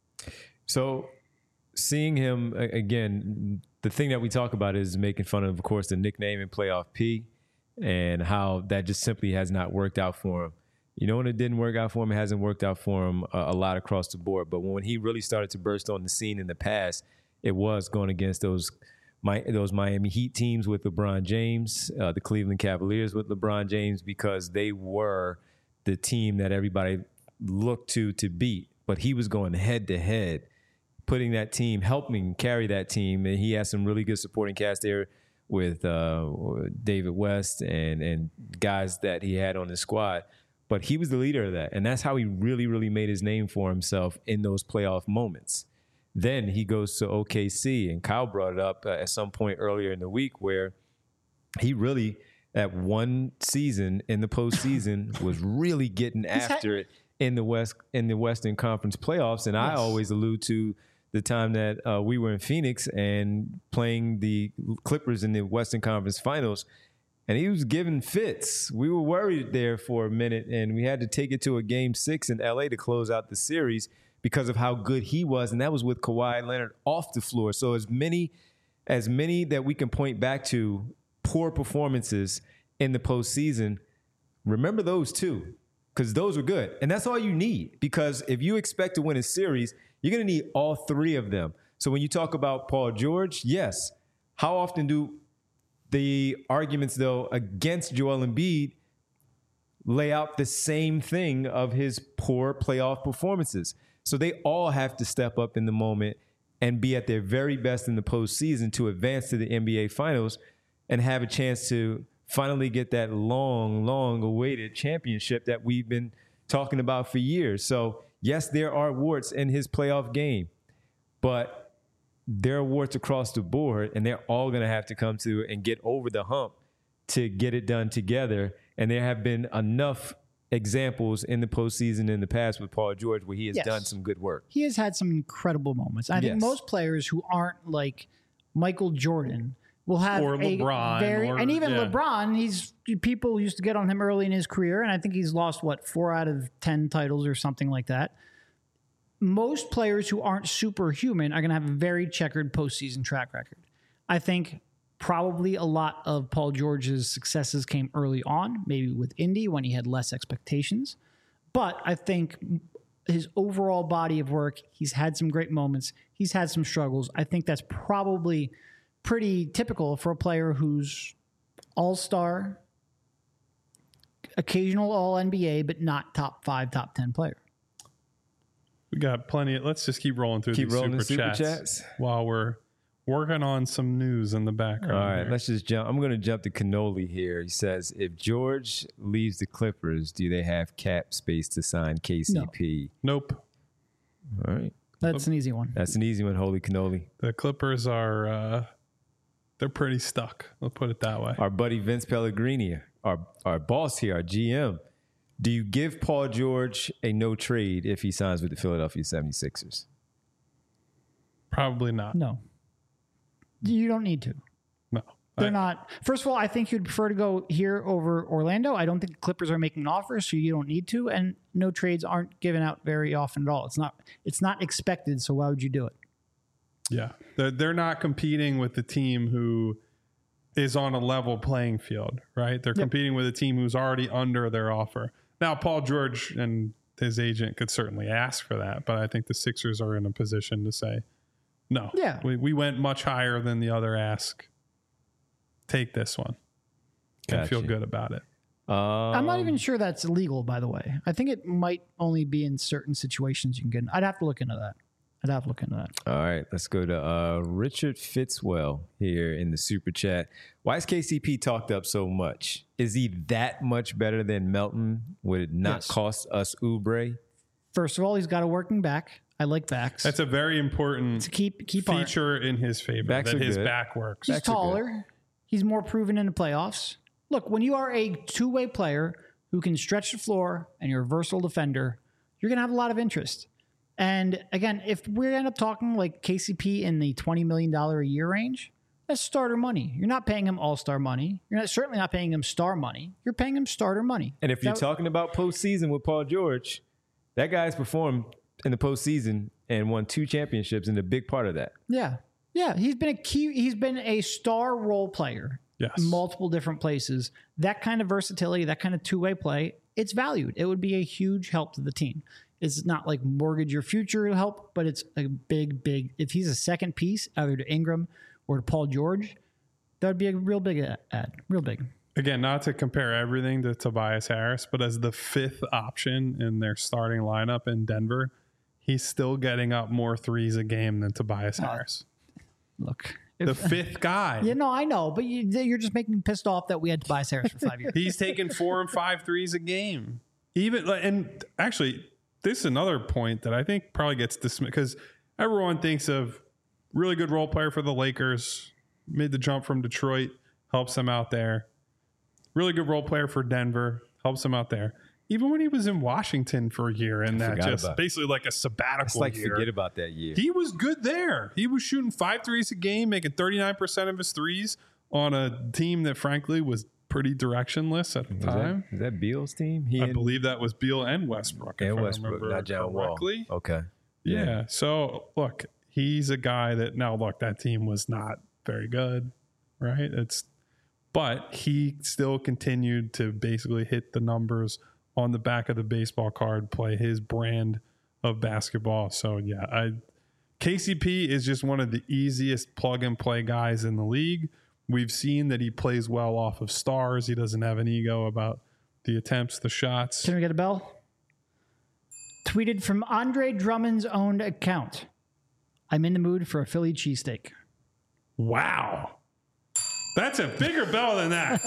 Speaker 1: So seeing him a- again, the thing that we talk about is making fun of, of course, the nickname in Playoff P and how that just simply has not worked out for him. You know, when it didn't work out for him, it hasn't worked out for him a, a lot across the board. But when he really started to burst on the scene in the past, it was going against those my, those Miami Heat teams with LeBron James, uh, the Cleveland Cavaliers with LeBron James, because they were the team that everybody looked to to beat. But he was going head to head, putting that team, helping carry that team. And he has some really good supporting cast there with uh, David West and, and guys that he had on his squad. But he was the leader of that. And that's how he really, really made his name for himself in those playoff moments. Then he goes to O K C, and Kyle brought it up uh, at some point earlier in the week where he really, at one season in the postseason, was really getting after it in the West in the Western Conference playoffs. And I
Speaker 3: Yes.
Speaker 1: always allude to the time that uh, we were in Phoenix and playing the Clippers in the Western Conference Finals. And he was giving fits. We were worried there for a minute, and we had to take it to a game six in L A to close out the series because of how good he was. And that was with Kawhi Leonard off the floor. So as many, as many that we can point back to poor performances in the postseason, remember those two, because those were good. And that's all you need, because if you expect to win a series, you're going to need all three of them. So when you talk about Paul George, yes. How often do the arguments, though, against Joel Embiid lay out the same thing of his poor playoff performances? So they all have to step up in the moment and be at their very best in the postseason to advance to the N B A Finals and have a chance to finally get that long, long awaited championship that we've been talking about for years. So yes, there are warts in his playoff game, but there are warts across the board, and they're all going to have to come to and get over the hump to get it done together. And there have been enough examples in the postseason in the past with Paul George where he has
Speaker 3: Yes.
Speaker 1: done some good work.
Speaker 3: He has had some incredible moments. I think
Speaker 1: Yes.
Speaker 3: most players who aren't like Michael Jordan will have
Speaker 2: Or
Speaker 3: a
Speaker 2: LeBron,
Speaker 3: very,
Speaker 2: or-
Speaker 3: and even
Speaker 2: yeah.
Speaker 3: LeBron, he's people used to get on him early in his career, and I think he's lost what four out of ten titles or something like that. Most players who aren't superhuman are going to have a very checkered postseason track record. I think probably a lot of Paul George's successes came early on, maybe with Indy when he had less expectations. But I think his overall body of work, he's had some great moments. He's had some struggles. I think that's probably pretty typical for a player who's all-star, occasional all-N B A, but not top five, top ten player.
Speaker 2: We got plenty. Of, let's just keep rolling through
Speaker 1: Keep
Speaker 2: these
Speaker 1: rolling
Speaker 2: super,
Speaker 1: the super
Speaker 2: chats,
Speaker 1: chats.
Speaker 2: while we're working on some news in the background.
Speaker 1: All right,
Speaker 2: here.
Speaker 1: let's just jump. I'm going to jump to Cannoli here. He says, if George leaves the Clippers, do they have cap space to sign K C P?
Speaker 2: Nope.
Speaker 1: All right.
Speaker 3: That's an easy one.
Speaker 1: That's an easy one, Holy Cannoli.
Speaker 2: The Clippers are uh, they're pretty stuck. Let's put it that way.
Speaker 1: Our buddy Vince Pellegrini, our, our boss here, our G M. Do you give Paul George a no trade if he signs with the Philadelphia seventy-sixers?
Speaker 2: Probably not.
Speaker 3: No. You don't need to.
Speaker 2: No.
Speaker 3: They're
Speaker 2: I-
Speaker 3: not. First of all, I think you'd prefer to go here over Orlando. I don't think the Clippers are making an offer, so you don't need to. And no trades aren't given out very often at all. It's not. It's not expected. So why would you do it?
Speaker 2: Yeah, they're they're not competing with the team who is on a level playing field, right? They're
Speaker 3: Yep.
Speaker 2: competing with a team who's already under their offer. Now, Paul George and his agent could certainly ask for that, but I think the Sixers are in a position to say, no,
Speaker 3: Yeah.
Speaker 2: we, we went much higher than the other ask. Take this one and feel
Speaker 1: Gotcha.
Speaker 2: good about it.
Speaker 1: Um,
Speaker 3: I'm not even sure that's illegal, by the way. I think it might only be in certain situations you can get. I'd have to look into that. I'd have to look into that.
Speaker 1: All right, let's go to uh, Richard Fitzwell here in the super chat. Why is K C P talked up so much? Is he that much better than Melton? Would it not
Speaker 3: Yes.
Speaker 1: cost us Oubre?
Speaker 3: First of all, he's got a working back. I like backs.
Speaker 2: That's a very important
Speaker 3: to keep keep on.
Speaker 2: feature in his favor,
Speaker 1: Backs
Speaker 2: that
Speaker 1: are
Speaker 2: his
Speaker 1: good.
Speaker 2: back works.
Speaker 3: He's
Speaker 1: Backs are good.
Speaker 3: taller. He's more proven in the playoffs. Look, when you are a two-way player who can stretch the floor and you're a versatile defender, you're going to have a lot of interest. And again, if we end up talking like K C P in the twenty million dollars a year range, that's starter money. You're not paying him all-star money. You're not certainly not paying him star money. You're paying him starter money.
Speaker 1: And if you're
Speaker 3: That-
Speaker 1: talking about postseason with Paul George, that guy's performed in the postseason and won two championships, and a big part of that.
Speaker 3: Yeah. Yeah. He's been a key, he's been a star role player
Speaker 2: Yes.
Speaker 3: in multiple different places. That kind of versatility, that kind of two-way play, it's valued. It would be a huge help to the team. It's not like mortgage your future help, but it's a big, big, if he's a second piece, either to Ingram or to Paul George, that would be a real big ad, real big.
Speaker 2: Again, not to compare everything to Tobias Harris, but as the fifth option in their starting lineup in Denver, he's still getting up more threes a game than Tobias Harris.
Speaker 3: Look.
Speaker 2: The
Speaker 3: If,
Speaker 2: fifth guy.
Speaker 3: yeah, no, I know, but you, you're just making me pissed off that we had Tobias Harris for five years.
Speaker 2: He's taking four and five threes a game. Even like, and actually, this is another point that I think probably gets dismissed because everyone thinks of really good role player for the Lakers, made the jump from Detroit, helps them out there. Really good role player for Denver, helps them out there. Even when he was in Washington for a year, and that
Speaker 1: forgot
Speaker 2: just
Speaker 1: about it.
Speaker 2: basically like a sabbatical
Speaker 1: It's like
Speaker 2: year.
Speaker 1: forget about that year.
Speaker 2: He was good there. He was shooting five threes a game, making thirty-nine percent of his threes on a team that frankly was pretty directionless at the
Speaker 1: Was
Speaker 2: time.
Speaker 1: that, is that Beal's team? He
Speaker 2: I
Speaker 1: and,
Speaker 2: believe that was Beal and Westbrook. if
Speaker 1: and
Speaker 2: I
Speaker 1: Westbrook,
Speaker 2: remember
Speaker 1: not John Wall.
Speaker 2: correctly.
Speaker 1: Okay.
Speaker 2: Yeah. So look, he's a guy that now look, that team was not very good, right? It's but he still continued to basically hit the numbers on the back of the baseball card, play his brand of basketball. So yeah, I K C P is just one of the easiest plug and play guys in the league. We've seen that he plays well off of stars. He doesn't have an ego about the attempts, the shots.
Speaker 3: Can we get a bell? Tweeted from Andre Drummond's own account. I'm in the mood for a Philly cheesesteak.
Speaker 2: Wow. That's a bigger bell than that.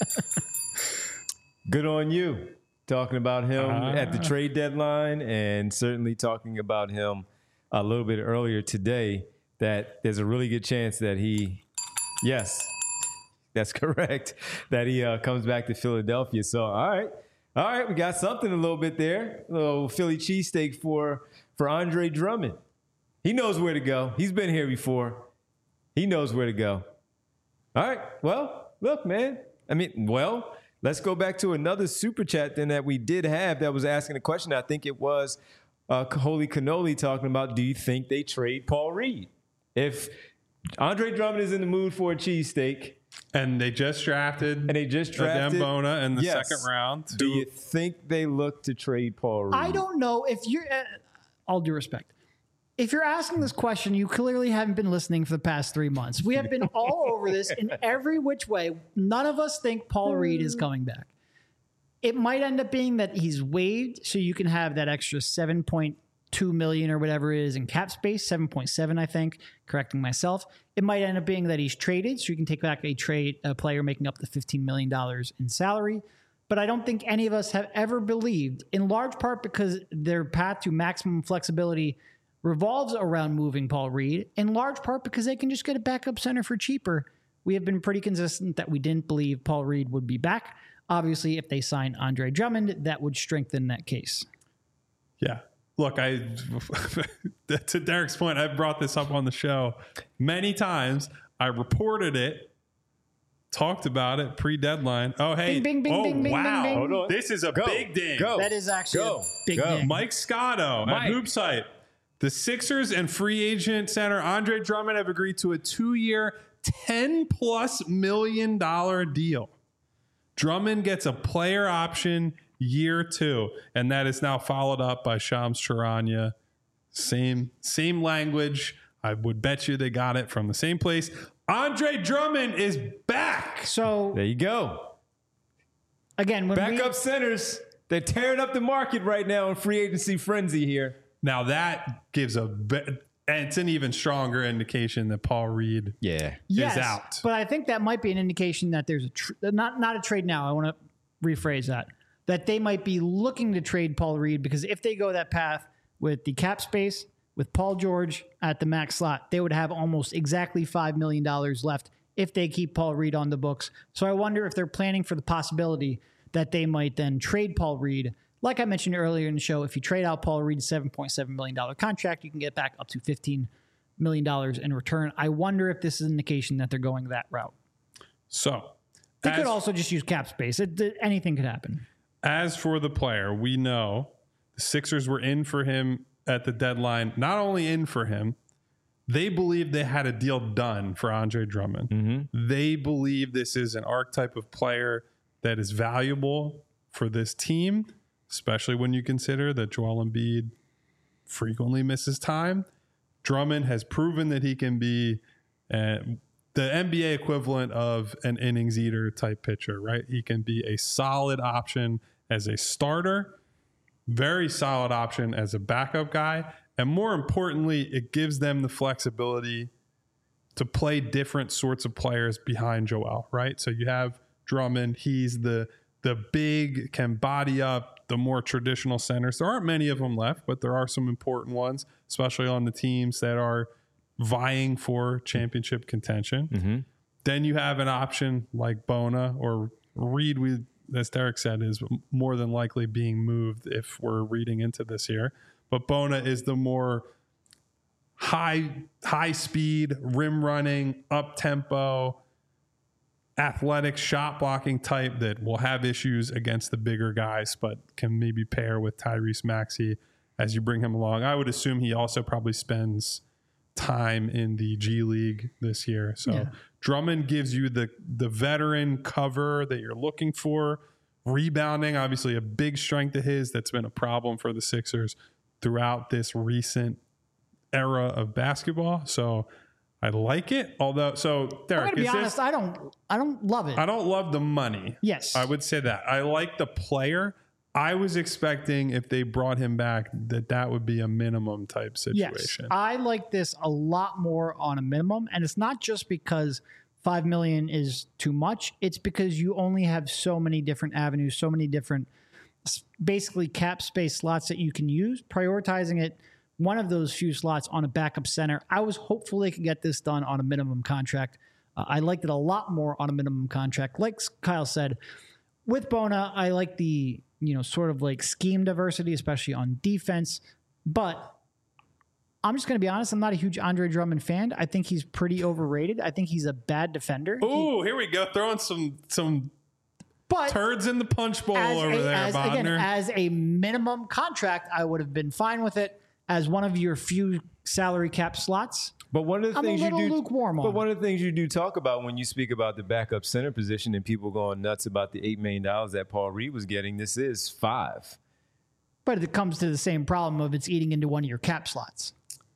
Speaker 1: Good on you. Talking about him
Speaker 2: uh,
Speaker 1: at the trade deadline, and certainly talking about him a little bit earlier today, that there's a really good chance that he, yes, that's correct, that he uh, comes back to Philadelphia. So, all right. All right, we got something a little bit there. A little Philly cheesesteak for, for Andre Drummond. He knows where to go. He's been here before. He knows where to go. All right. Well, look, man. I mean, well, let's go back to another super chat then that we did have that was asking a question. I think it was uh, Holy Cannoli talking about, do you think they trade Paul Reed? If Andre Drummond is in the mood for a cheesesteak,
Speaker 2: and they just drafted
Speaker 1: and they just drafted
Speaker 2: Adem Bona in the
Speaker 1: yes.
Speaker 2: second round.
Speaker 1: Do you think they look to trade Paul Reed?
Speaker 3: I don't know if you're, uh, all due respect, if you're asking this question, you clearly haven't been listening for the past three months. We have been all over this in every which way. None of us think Paul Reed is coming back. It might end up being that he's waived, so you can have that extra seven point two million or whatever it is in cap space, seven point seven, I think, correcting myself. It might end up being that he's traded, so you can take back a trade a player making up to fifteen million dollars in salary. But I don't think any of us have ever believed, in large part because their path to maximum flexibility revolves around moving Paul Reed, in large part because they can just get a backup center for cheaper. We have been pretty consistent that we didn't believe Paul Reed would be back. Obviously, if they sign Andre Drummond, that would strengthen that case.
Speaker 2: Yeah. Look, I to Derek's point, I've brought this up on the show many times. I reported it, talked about it pre-deadline. Oh, hey.
Speaker 3: Bing, bing, bing,
Speaker 2: oh,
Speaker 3: bing, bing,
Speaker 2: wow.
Speaker 3: bing, bing.
Speaker 2: This is a
Speaker 1: Go.
Speaker 2: big ding.
Speaker 1: Go.
Speaker 3: That is actually
Speaker 1: Go.
Speaker 3: a big
Speaker 1: Go.
Speaker 3: ding.
Speaker 2: Mike Scotto
Speaker 1: Mike.
Speaker 2: at HoopsHype. The Sixers and free agent center Andre Drummond have agreed to a two-year, ten plus million dollar deal. Drummond gets a player option year two, and that is now followed up by Shams Charania. Same, same language. I would bet you they got it from the same place. Andre Drummond is back.
Speaker 3: So
Speaker 1: There you go.
Speaker 3: again, when
Speaker 1: Backup
Speaker 3: we,
Speaker 1: centers. They're tearing up the market right now in free agency frenzy here.
Speaker 2: Now that gives a, be- and it's an even stronger indication that Paul Reed
Speaker 1: Yeah.
Speaker 3: yes,
Speaker 2: is out.
Speaker 3: but I think that might be an indication that there's a tr- not not a trade now. I want to rephrase that. That they might be looking to trade Paul Reed, because if they go that path with the cap space, with Paul George at the max slot, they would have almost exactly five million dollars left if they keep Paul Reed on the books. So I wonder if they're planning for the possibility that they might then trade Paul Reed. Like I mentioned earlier in the show, if you trade out Paul Reed's seven point seven million dollars contract, you can get back up to fifteen million dollars in return. I wonder if this is an indication that they're going that route.
Speaker 2: So
Speaker 3: They
Speaker 2: as-
Speaker 3: could also just use cap space. It, it- anything could happen.
Speaker 2: As for the player, we know the Sixers were in for him at the deadline. Not only in for him, they believe they had a deal done for Andre Drummond.
Speaker 1: Mm-hmm.
Speaker 2: They believe this is an archetype of player that is valuable for this team, especially when you consider that Joel Embiid frequently misses time. Drummond has proven that he can be uh, the N B A equivalent of an innings eater type pitcher, right? He can be a solid option as a starter, very solid option as a backup guy, and more importantly, it gives them the flexibility to play different sorts of players behind Joel, right? So you have Drummond, he's the the big, can body up the more traditional centers. There aren't many of them left, but there are some important ones, especially on the teams that are vying for championship contention.
Speaker 1: Mm-hmm.
Speaker 2: Then you have an option like Bona or Reed, we, as Derek said, is more than likely being moved if we're reading into this here. But Bona is the more high high speed, rim running, up tempo, athletic shot blocking type that will have issues against the bigger guys, but can maybe pair with Tyrese Maxey as you bring him along. I would assume he also probably spends time in the G League this year. So
Speaker 3: Yeah.
Speaker 2: Drummond gives you the the veteran cover that you're looking for. Rebounding, obviously a big strength of his that's been a problem for the Sixers throughout this recent era of basketball. So I like it. Although, so Derek,
Speaker 3: I'm gonna be
Speaker 2: is
Speaker 3: honest,
Speaker 2: this,
Speaker 3: I don't, I don't love it.
Speaker 2: I don't love the money.
Speaker 3: Yes,
Speaker 2: I would say that. I like the player. I was expecting if they brought him back that that would be a minimum type situation.
Speaker 3: Yes, I like this a lot more on a minimum, and it's not just because five million is too much. It's because you only have so many different avenues, so many different, basically cap space slots that you can use. Prioritizing it, one of those few slots on a backup center. I was hopeful they could get this done on a minimum contract. Uh, I liked it a lot more on a minimum contract. Like Kyle said, with Bona, I like the, you know, sort of like scheme diversity, especially on defense. But I'm just going to be honest. I'm not a huge Andre Drummond fan. I think he's pretty overrated. I think he's a bad defender.
Speaker 2: Oh, here we go. Throwing some some
Speaker 3: but
Speaker 2: turds in the punch bowl over
Speaker 3: a,
Speaker 2: there,
Speaker 3: as,
Speaker 2: Bodner.
Speaker 3: Again, as a minimum contract, I would have been fine with it as one of your few salary cap slots.
Speaker 1: But one of the
Speaker 3: I'm
Speaker 1: things
Speaker 3: a
Speaker 1: you
Speaker 3: little
Speaker 1: do,
Speaker 3: lukewarm on
Speaker 1: but
Speaker 3: it.
Speaker 1: one of the things you do talk about when you speak about the backup center position and people going nuts about the eight million dollars that Paul Reed was getting, this is five.
Speaker 3: But it comes to the same problem of it's eating into one of your cap slots.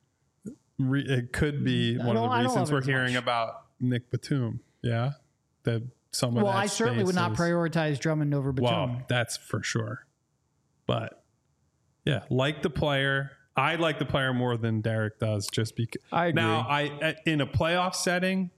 Speaker 2: Re- it could be one of
Speaker 3: don't- I
Speaker 2: the
Speaker 3: don't
Speaker 2: reasons
Speaker 3: love it
Speaker 2: we're
Speaker 3: as
Speaker 2: hearing
Speaker 3: much.
Speaker 2: about Nick Batum. Yeah, that some of
Speaker 3: Well,
Speaker 2: that
Speaker 3: I certainly would
Speaker 2: space
Speaker 3: not
Speaker 2: is-
Speaker 3: prioritize Drummond over Batum.
Speaker 2: Well, that's for sure. But yeah, like the player. I like the player more than Derek does, just because.
Speaker 1: I agree.
Speaker 2: Now, I in a playoff setting,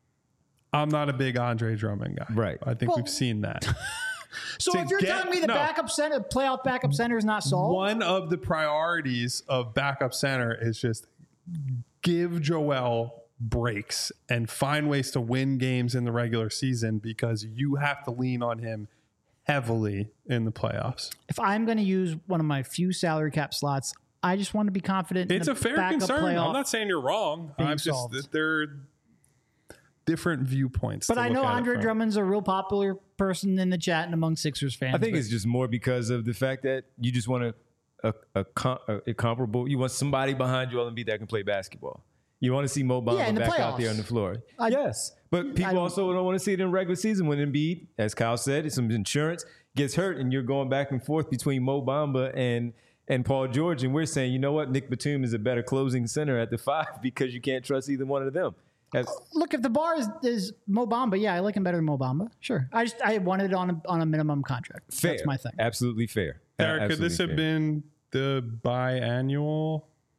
Speaker 2: I'm not a big Andre Drummond guy.
Speaker 1: Right.
Speaker 2: I think
Speaker 3: Well-
Speaker 2: we've seen that.
Speaker 3: so
Speaker 2: to
Speaker 3: if you're
Speaker 2: get-
Speaker 3: telling me the
Speaker 2: no.
Speaker 3: backup center, playoff backup center is not solved,
Speaker 2: One of the priorities of backup center is just give Joel breaks and find ways to win games in the regular season because you have to lean on him heavily in the playoffs.
Speaker 3: if I'm going to use one of my few salary cap slots, I just want to be confident.
Speaker 2: It's
Speaker 3: in
Speaker 2: a fair
Speaker 3: backup
Speaker 2: concern.
Speaker 3: playoff.
Speaker 2: I'm not saying you're wrong.
Speaker 3: being
Speaker 2: I'm just
Speaker 3: solved.
Speaker 2: that there are different viewpoints.
Speaker 3: But
Speaker 2: to
Speaker 3: I
Speaker 2: look
Speaker 3: know
Speaker 2: at it
Speaker 3: Andre
Speaker 2: from.
Speaker 3: Drummond's a real popular person in the chat and among Sixers fans.
Speaker 1: I think
Speaker 3: but
Speaker 1: it's just more because of the fact that you just want a a, a, com- a, a comparable. You want somebody behind Joel Embiid that can play basketball. You want to see Mo Bamba
Speaker 3: Yeah, in the
Speaker 1: back out there
Speaker 3: playoffs.
Speaker 1: on the floor.
Speaker 3: I-
Speaker 1: yes, but people
Speaker 3: don't-
Speaker 1: also don't want to see it in regular season when Embiid, as Kyle said, it's some insurance gets hurt and you're going back and forth between Mo Bamba and and Paul George, and we're saying, you know what, Nick Batum is a better closing center at the five because you can't trust either one of them. As,
Speaker 3: Look, if the bar is, is Mo Bamba, yeah, I like him better than Mo Bamba. Sure. I just I wanted it on a, on a minimum contract.
Speaker 1: fair,
Speaker 3: That's my thing.
Speaker 1: Absolutely fair.
Speaker 2: Derek, could this
Speaker 1: Absolutely
Speaker 2: have
Speaker 1: fair.
Speaker 2: been the biannual?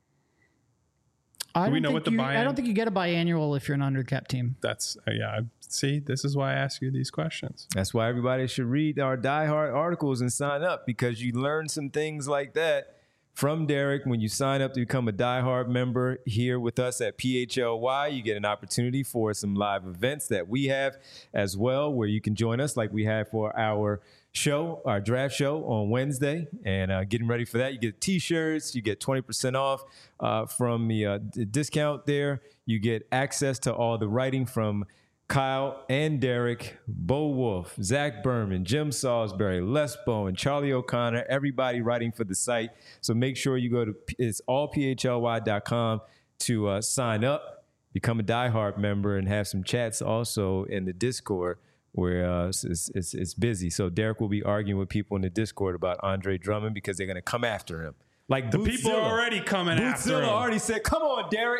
Speaker 3: I
Speaker 2: Do we
Speaker 3: don't
Speaker 2: know
Speaker 3: think
Speaker 2: what the
Speaker 3: you,
Speaker 2: buy-in-
Speaker 3: I don't think you get a biannual if you're an undercap team.
Speaker 2: That's uh, yeah. See, this is why I ask you these questions.
Speaker 1: That's why everybody should read our Die Hard articles and sign up, because you learn some things like that from Derek when you sign up to become a Die Hard member here with us at P H L Y. You get an opportunity for some live events that we have as well, where you can join us like we have for our show, our draft show on Wednesday. And uh, getting ready for that, you get T-shirts, you get twenty percent off uh, from the uh, d- discount there. You get access to all the writing from Kyle and Derek, Bo Wolf, Zach Berman, Jim Salisbury, Les Bowen, Charlie O'Connor, everybody writing for the site. So make sure you go to it's all P H L Y dot com to uh, sign up, become a diehard member, and have some chats also in the Discord where uh, it's, it's, it's busy. So Derek will be arguing with people in the Discord about Andre Drummond because they're going to come after him. Like
Speaker 2: The people are already coming after
Speaker 1: Bootzilla
Speaker 2: him.
Speaker 1: already said, "Come on, Derek."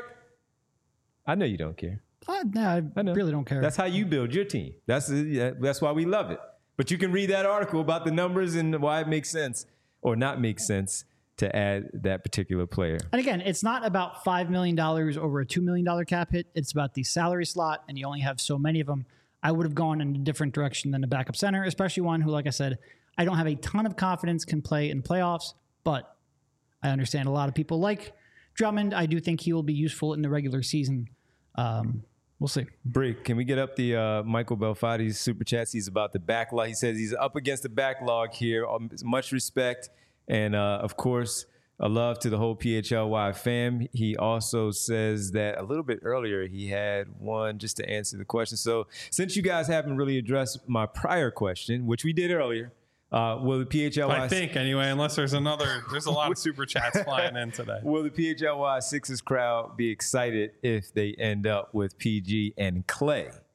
Speaker 1: I know you don't care.
Speaker 3: I, no, I,
Speaker 1: I know.
Speaker 3: really don't care.
Speaker 1: That's how you build your team. That's yeah, that's why we love it. But you can read that article about the numbers and why it makes sense or not make sense to add that particular player.
Speaker 3: And again, it's not about five million dollars over a two million dollars cap hit. It's about the salary slot, and you only have so many of them. I would have gone in a different direction than a backup center, especially one who, like I said, I don't have a ton of confidence can play in playoffs, but I understand a lot of people like Drummond. I do think he will be useful in the regular season. Um, we'll see.
Speaker 1: Brick, can we get up the uh, Michael Belfati's super chats? He's about the backlog. He says he's up against the backlog here. Um, much respect. And, uh, of course, a love to the whole P H L Y fam. He also says that a little bit earlier he had one just to answer the question. So since you guys haven't really addressed my prior question, which we did earlier, uh, will the P H L Y...
Speaker 2: I think anyway, unless there's another, there's a lot of super chats flying in today.
Speaker 1: Will the P H L Y Sixers crowd be excited if they end up with P G and Clay?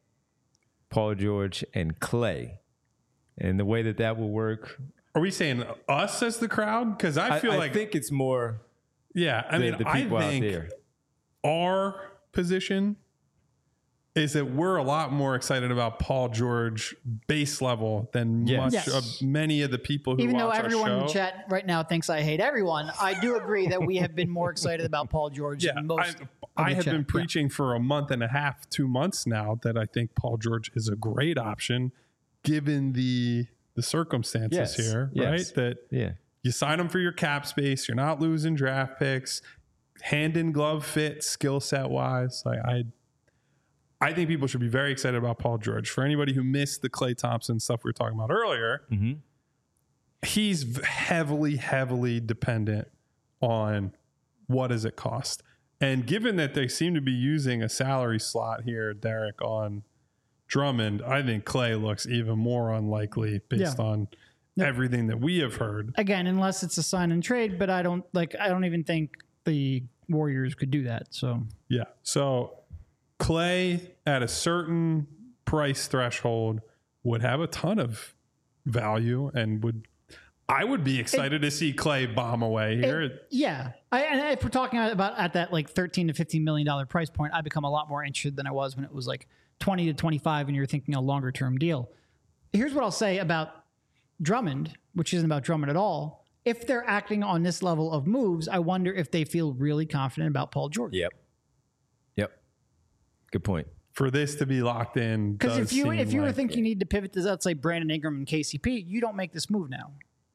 Speaker 1: Paul George, and Clay. And the way that that will work,
Speaker 2: Are we saying us as the crowd? Because I feel
Speaker 1: I,
Speaker 2: like
Speaker 1: I think it's more.
Speaker 2: yeah. I
Speaker 1: the,
Speaker 2: mean,
Speaker 1: the
Speaker 2: I
Speaker 1: people
Speaker 2: think
Speaker 1: out there.
Speaker 2: our position is that we're a lot more excited about Paul George base level than
Speaker 1: Yes.
Speaker 2: much
Speaker 3: Yes.
Speaker 2: of many of the people who
Speaker 3: Even though
Speaker 2: watch
Speaker 3: everyone
Speaker 2: our
Speaker 3: in
Speaker 2: show.
Speaker 3: the chat right now thinks I hate everyone, I do agree that we have been more excited about Paul George
Speaker 2: Yeah,
Speaker 3: than most.
Speaker 2: I,
Speaker 3: of
Speaker 2: I
Speaker 3: the
Speaker 2: have
Speaker 3: chat.
Speaker 2: been
Speaker 3: Yeah.
Speaker 2: preaching for a month and a half, two months now that I think Paul George is a great option given the the circumstances
Speaker 1: Yes,
Speaker 2: here,
Speaker 1: yes.
Speaker 2: right? That
Speaker 1: Yeah.
Speaker 2: you sign him for your cap space, you're not losing draft picks, hand in glove fit, skill set wise. Like I I think people should be very excited about Paul George. For anybody who missed the Klay Thompson stuff we were talking about earlier,
Speaker 1: Mm-hmm.
Speaker 2: he's heavily, heavily dependent on what does it cost. And given that they seem to be using a salary slot here, Derek, on Drummond, I think Clay looks even more unlikely based
Speaker 3: Yeah.
Speaker 2: on
Speaker 3: Yep.
Speaker 2: everything that we have heard.
Speaker 3: Again, unless it's a sign and trade, but I don't like. I don't even think the Warriors could do that. So
Speaker 2: Yeah. So Clay at a certain price threshold would have a ton of value and would I would be excited to see Clay bomb away here.
Speaker 3: It- yeah, I, and if we're talking about at that like thirteen to fifteen million dollar price point, I become a lot more interested than I was when it was like twenty to twenty five, and you're thinking a longer term deal. Here's what I'll say about Drummond, which isn't about Drummond at all. If they're acting on this level of moves, I wonder if they feel really confident about Paul George.
Speaker 1: Yep. Yep. Good point.
Speaker 2: For this to be locked in,
Speaker 3: Because
Speaker 2: does
Speaker 3: if you
Speaker 2: seem
Speaker 3: if you were
Speaker 2: like-
Speaker 3: thinking you need to pivot to let's say Brandon Ingram and K C P, you don't make this move now.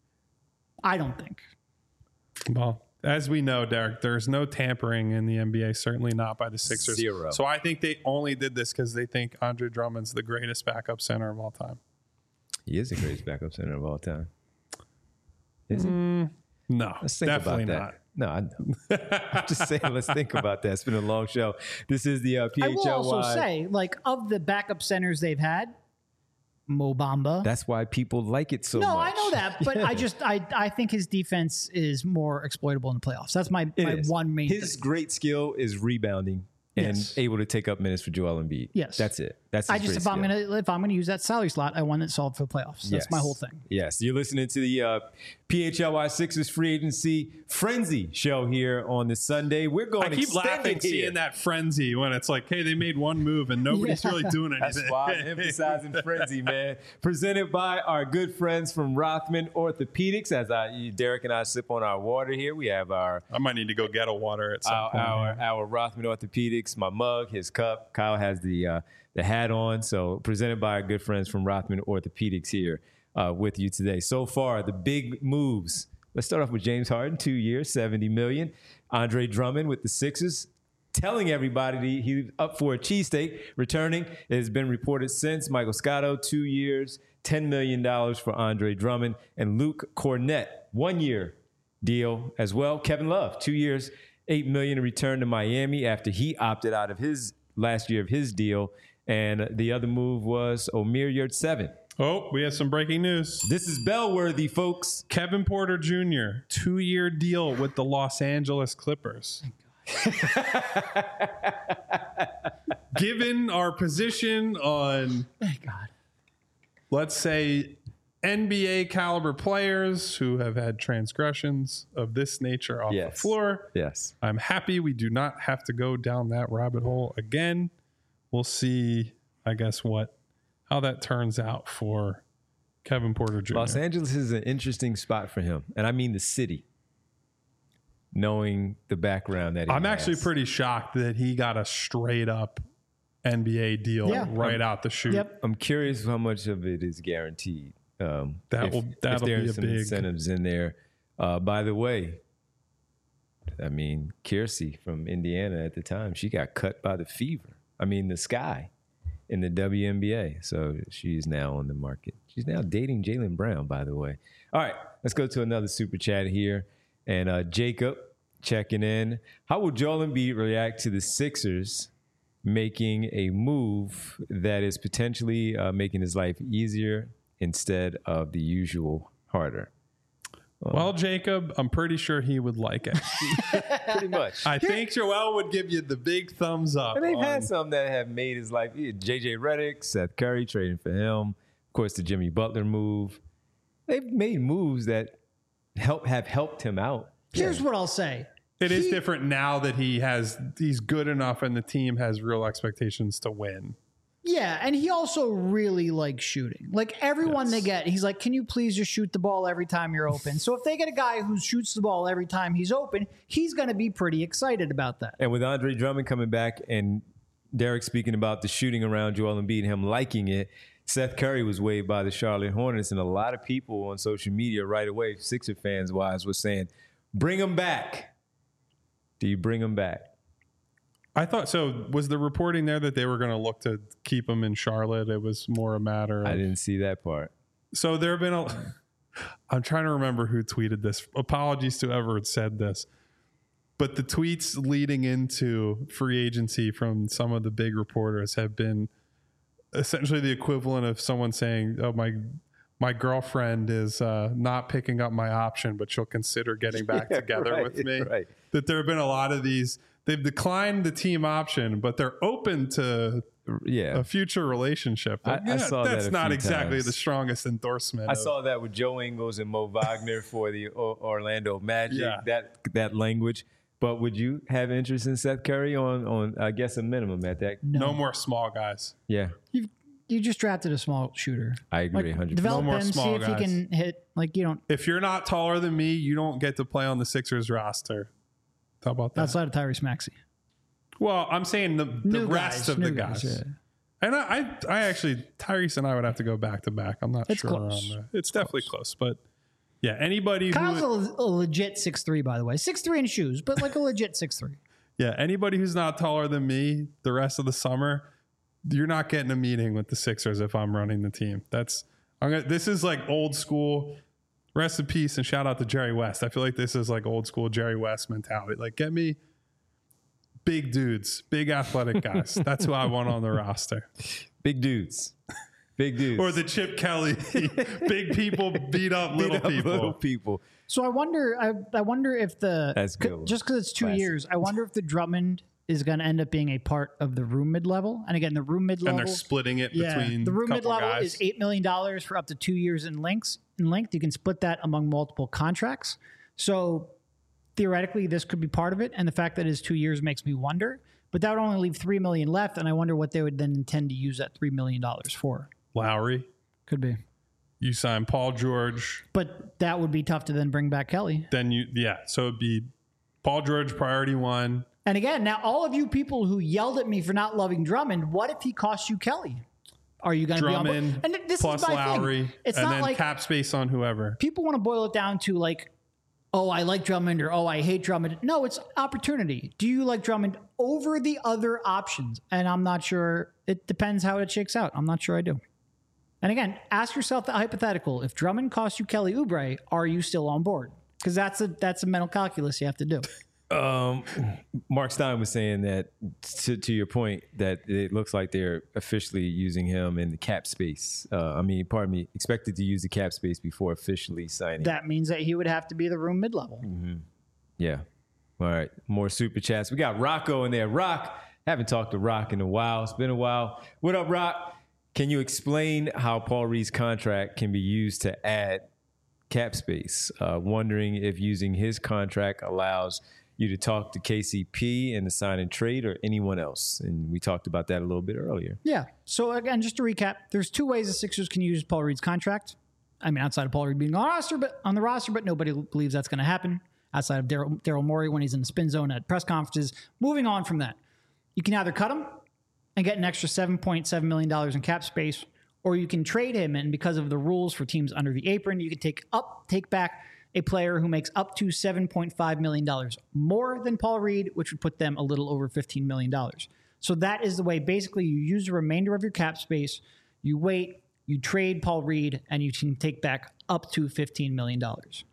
Speaker 3: I don't think.
Speaker 2: well, as we know, Derek, there's no tampering in the N B A, certainly not by the Sixers.
Speaker 1: Zero.
Speaker 2: So I think they only did this because they think Andre Drummond's the greatest backup center of all time.
Speaker 1: He is the greatest backup center of all time. Is he?
Speaker 2: No,
Speaker 1: Let's think
Speaker 2: definitely
Speaker 1: about
Speaker 2: not.
Speaker 1: that. No, I know. I'm just saying, let's think about that. It's been a long show. This is the uh, P
Speaker 3: I
Speaker 1: H L Y.
Speaker 3: will also say, like, of the backup centers they've had, Mo Bamba.
Speaker 1: That's why people like it so
Speaker 3: no,
Speaker 1: much.
Speaker 3: I know that, but I just I I think his defense is more exploitable in the playoffs. That's my,
Speaker 1: It
Speaker 3: my
Speaker 1: is.
Speaker 3: one main
Speaker 1: His
Speaker 3: thing.
Speaker 1: great skill is rebounding and
Speaker 3: Yes.
Speaker 1: able to take up minutes for Joel Embiid.
Speaker 3: Yes.
Speaker 1: That's it. That's his
Speaker 3: I just
Speaker 1: great
Speaker 3: if I'm
Speaker 1: skill.
Speaker 3: gonna if I'm gonna use that salary slot, I want it solved for the playoffs. That's
Speaker 1: Yes.
Speaker 3: my whole thing.
Speaker 1: Yes, you're listening to the uh, P H L Y Sixers Free Agency Frenzy show here on this Sunday. We're going
Speaker 2: I keep
Speaker 1: extended
Speaker 2: laughing
Speaker 1: here.
Speaker 2: seeing that frenzy when it's like, hey, they made one move and nobody's
Speaker 3: Yeah.
Speaker 2: really doing anything.
Speaker 1: That's why I'm emphasizing frenzy, man. Presented by our good friends from Rothman Orthopedics. As I, Derek and I sip on our water here, we have our
Speaker 2: I might need to go get a water at some
Speaker 1: our,
Speaker 2: point.
Speaker 1: our, our Rothman Orthopedics, my mug, his cup. Kyle has the uh, the hat on. So presented by our good friends from Rothman Orthopedics here uh, with you today. So far, the big moves. Let's start off with James Harden, two years, seventy million dollars. Andre Drummond with the Sixers, telling everybody he's up for a cheesesteak. Returning, it has been reported since. Michael Scotto, two years, ten million dollars for Andre Drummond. And Luke Cornett, one year deal as well. Kevin Love, two years, eight million dollars to return to Miami after he opted out of his last year of his deal. And the other move was Omer Yurtseven.
Speaker 2: Oh, we have some breaking news.
Speaker 1: This is bellworthy, folks.
Speaker 2: Kevin Porter Junior, two-year deal with the Los Angeles Clippers. Given our position on,
Speaker 3: Thank God.
Speaker 2: let's say, N B A caliber players who have had transgressions of this nature off the
Speaker 1: Yes.
Speaker 2: floor,
Speaker 1: Yes.
Speaker 2: I'm happy we do not have to go down that rabbit hole again. We'll see, I guess, what how that turns out for Kevin Porter Junior
Speaker 1: Los Angeles is an interesting spot for him. And I mean the city, knowing the background that he
Speaker 2: I'm
Speaker 1: has.
Speaker 2: actually pretty shocked that he got a straight up N B A deal
Speaker 3: Yeah.
Speaker 2: right out the chute.
Speaker 3: Yep.
Speaker 1: I'm curious how much of it is guaranteed. Um,
Speaker 2: That
Speaker 1: if,
Speaker 2: will-
Speaker 1: if
Speaker 2: that'll
Speaker 1: there
Speaker 2: be
Speaker 1: are
Speaker 2: a
Speaker 1: some
Speaker 2: big-
Speaker 1: incentives in there. Uh, by the way, I mean, Kiersey from Indiana at the time, she got cut by the Fever. I mean, the Sky in the W N B A. So she's now on the market. She's now dating Jaylen Brown, by the way. All right, let's go to another super chat here. And uh, Jacob checking in. How will Joel Embiid react to the Sixers making a move that is potentially uh, making his life easier instead of the usual harder?
Speaker 2: Well, Jacob, I'm pretty sure he would like it.
Speaker 1: Pretty much.
Speaker 2: I think Joel would give you the big thumbs up.
Speaker 1: And they've
Speaker 2: on-
Speaker 1: had some that have made his life. J J Redick, Seth Curry trading for him. Of course, the Jimmy Butler move. They've made moves that help have helped him out.
Speaker 3: Here's what I'll say.
Speaker 2: It is
Speaker 3: He-
Speaker 2: different now that he has he's good enough and the team has real expectations to win.
Speaker 3: Yeah, and he also really likes shooting. Like everyone
Speaker 2: Yes.
Speaker 3: they get, he's like, can you please just shoot the ball every time you're open? So if they get a guy who shoots the ball every time he's open, he's going to be pretty excited about that.
Speaker 1: And with Andre Drummond coming back and Derek speaking about the shooting around Joel Embiid and him liking it, Seth Curry was waived by the Charlotte Hornets, and a lot of people on social media right away, Sixer fans wise, was saying, bring him back. Do you bring him back?
Speaker 2: I thought so. Was the reporting there that they were going to look to keep him in Charlotte? It was more a matter of.
Speaker 1: I didn't see that part.
Speaker 2: So there have been a. I'm trying to remember who tweeted this. Apologies to whoever had said this. But the tweets leading into free agency from some of the big reporters have been essentially the equivalent of someone saying, oh, my my girlfriend is uh, not picking up my option, but she'll consider getting back
Speaker 1: Yeah,
Speaker 2: together
Speaker 1: right,
Speaker 2: with me.
Speaker 1: right.
Speaker 2: That there have been a lot of these. They've declined the team option, but they're open to
Speaker 1: Yeah.
Speaker 2: a future relationship.
Speaker 1: I- I saw that
Speaker 2: that's
Speaker 1: a
Speaker 2: not
Speaker 1: few
Speaker 2: exactly
Speaker 1: times.
Speaker 2: the strongest endorsement.
Speaker 1: I
Speaker 2: of-
Speaker 1: saw that with Joe Ingles and Mo Wagner for the o- Orlando Magic,
Speaker 2: Yeah.
Speaker 1: that that language. But would you have interest in Seth Curry on, on I guess, a minimum at that?
Speaker 2: no more small guys.
Speaker 1: Yeah,
Speaker 3: You you just drafted a small shooter.
Speaker 1: I agree
Speaker 3: Like,
Speaker 1: one hundred percent.
Speaker 3: develop
Speaker 2: No more
Speaker 3: him, see
Speaker 2: small
Speaker 3: if he
Speaker 2: guys.
Speaker 3: can hit. Like you don't
Speaker 2: If you're not taller than me, you don't get to play on the Sixers roster. How about that?
Speaker 3: outside of Tyrese Maxey.
Speaker 2: Well, I'm saying the, the
Speaker 3: New
Speaker 2: rest
Speaker 3: guys,
Speaker 2: of the
Speaker 3: new
Speaker 2: guys.
Speaker 3: guys, yeah.
Speaker 2: And I, I, I actually, Tyrese and I would have to go back to back. I'm not
Speaker 3: It's
Speaker 2: sure.
Speaker 3: close.
Speaker 2: On the, it's definitely close, but yeah, anybody
Speaker 3: Kyle's
Speaker 2: who,
Speaker 3: a, a legit six three, by the way. six three in shoes, but like a legit six three.
Speaker 2: yeah, anybody who's not taller than me the rest of the summer, you're not getting a meeting with the Sixers if I'm running the team. That's I'm gonna, this is like old school. Rest in peace and shout out to Jerry West. I feel like this is like old school Jerry West mentality. Like, get me big dudes, big athletic guys. That's who I want on the roster.
Speaker 1: Big dudes. Big dudes.
Speaker 2: Or the Chip Kelly, big people beat up little
Speaker 1: Beat up
Speaker 2: people.
Speaker 1: little people.
Speaker 3: So I wonder. I, I wonder if the
Speaker 1: That's
Speaker 3: c-
Speaker 1: good one.
Speaker 3: just because it's two
Speaker 1: Classic.
Speaker 3: years. I wonder if the Drummond is going to end up being a part of the room mid level. And again, the room mid
Speaker 2: And
Speaker 3: level.
Speaker 2: they're splitting it
Speaker 3: Yeah,
Speaker 2: between
Speaker 3: the room mid
Speaker 2: couple
Speaker 3: level
Speaker 2: guys.
Speaker 3: is eight million dollars for up to two years in length. In length, you can split that among multiple contracts. So theoretically, this could be part of it. And the fact that it is two years makes me wonder. But that would only leave three million left, and I wonder what they would then intend to use that three million dollars for.
Speaker 2: Lowry.
Speaker 3: Could be,
Speaker 2: You sign Paul George.
Speaker 3: but that would be tough to then bring back Kelly.
Speaker 2: Then you, yeah. So it'd be Paul George, priority one.
Speaker 3: And again, now all of you people who yelled at me for not loving Drummond, what if he cost you Kelly? Are you going to be on board?
Speaker 2: Drummond
Speaker 3: And this
Speaker 2: plus
Speaker 3: is my
Speaker 2: Lowry.
Speaker 3: thing. It's
Speaker 2: and
Speaker 3: not
Speaker 2: then
Speaker 3: like
Speaker 2: cap space on whoever.
Speaker 3: people want to boil it down to like, oh, I like Drummond or oh, I hate Drummond. No, it's opportunity. Do you like Drummond over the other options? And I'm not sure. It depends how it shakes out. I'm not sure I do. And again, ask yourself the hypothetical. If Drummond costs you Kelly Oubre, are you still on board? Because that's a that's a mental calculus you have to do.
Speaker 1: Um, Mark Stein was saying that, to, to your point, that it looks like they're officially using him in the cap space. Uh, I mean, pardon me, expected to use the cap space before officially signing.
Speaker 3: That means that he would have to be the room mid-level.
Speaker 1: Yeah. All right. More super chats. We got Rocco in there. Rock, haven't talked to Rock in a while. It's been a while. What up, Rock? Can you explain how Paul Reed's contract can be used to add cap space? Uh, wondering if using his contract allows you to talk to K C P and the sign and trade or anyone else. And we talked about that a little bit earlier.
Speaker 3: Yeah. So again, just to recap, there's two ways the Sixers can use Paul Reed's contract. I mean, outside of Paul Reed being on the roster, but on the roster, but nobody believes that's going to happen. Outside of Daryl Daryl Morey when he's in the spin zone at press conferences. Moving on from that, you can either cut him and get an extra seven point seven million dollars in cap space, or you can trade him, and because of the rules for teams under the apron, you can take up take back a player who makes up to seven point five million dollars more than Paul Reed, which would put them a little over fifteen million dollars. So that is the way. Basically, you use the remainder of your cap space, you wait, you trade Paul Reed, and you can take back up to fifteen million dollars.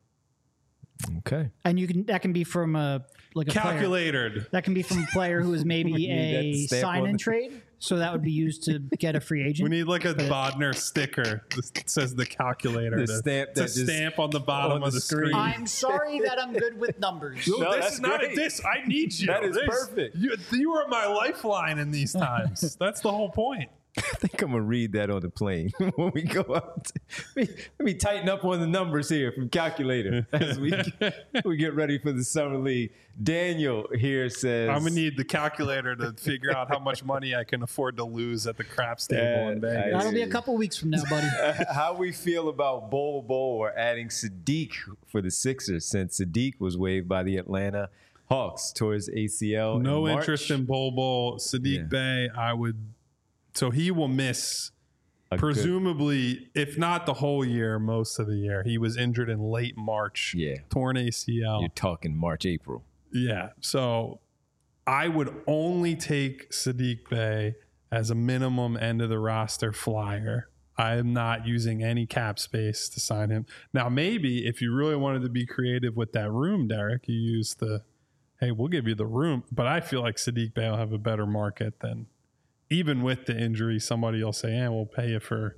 Speaker 1: Okay.
Speaker 3: And you can that can be from a like a player.
Speaker 2: Calculated.
Speaker 3: That can be from a player who is
Speaker 1: We
Speaker 3: maybe
Speaker 1: need that
Speaker 3: a
Speaker 1: stamp
Speaker 3: sign
Speaker 1: on
Speaker 3: and
Speaker 1: the-
Speaker 3: trade. So that would be used to get a free agent.
Speaker 2: We need like a Bodner sticker that says the calculator.
Speaker 1: The
Speaker 2: to,
Speaker 1: stamp
Speaker 2: to
Speaker 1: that just
Speaker 2: stamp on the bottom
Speaker 1: on
Speaker 2: of
Speaker 1: the
Speaker 2: the screen.
Speaker 1: screen.
Speaker 3: I'm sorry that I'm good with numbers.
Speaker 2: No,
Speaker 1: No,
Speaker 2: this
Speaker 1: that's
Speaker 2: is not
Speaker 1: great.
Speaker 2: a diss. I need you.
Speaker 1: That is
Speaker 2: This-
Speaker 1: perfect.
Speaker 2: You, you are my lifeline in these times. That's the whole point.
Speaker 1: I think I'm gonna read that on the plane when we go out. Let me, let me tighten up on the numbers here from calculator as we we get ready for the summer league. Daniel here says
Speaker 2: I'm gonna need the calculator to figure out how much money I can afford to lose at the craps table
Speaker 1: Yeah,
Speaker 2: in Vegas.
Speaker 3: That'll be a couple weeks from now, buddy.
Speaker 1: how we feel about Bol Bol or adding Sadiq for the Sixers since Sadiq was waived by the Atlanta Hawks towards A C L.
Speaker 2: No
Speaker 1: in
Speaker 2: interest
Speaker 1: March.
Speaker 2: in Bol Bol. Sadiq
Speaker 1: Yeah.
Speaker 2: Bey, I would. So he will miss,
Speaker 1: A good-
Speaker 2: presumably, if not the whole year, most of the year. He was injured in late March.
Speaker 1: Yeah.
Speaker 2: Torn A C L.
Speaker 1: You're talking March, April.
Speaker 2: Yeah. So I would only take Sadiq Bey as a minimum end of the roster flyer. I am not using any cap space to sign him. Now, maybe if you really wanted to be creative with that room, Derek, you use the, hey, we'll give you the room. But I feel like Sadiq Bey will have a better market than, even with the injury, somebody will say, yeah, we'll pay you for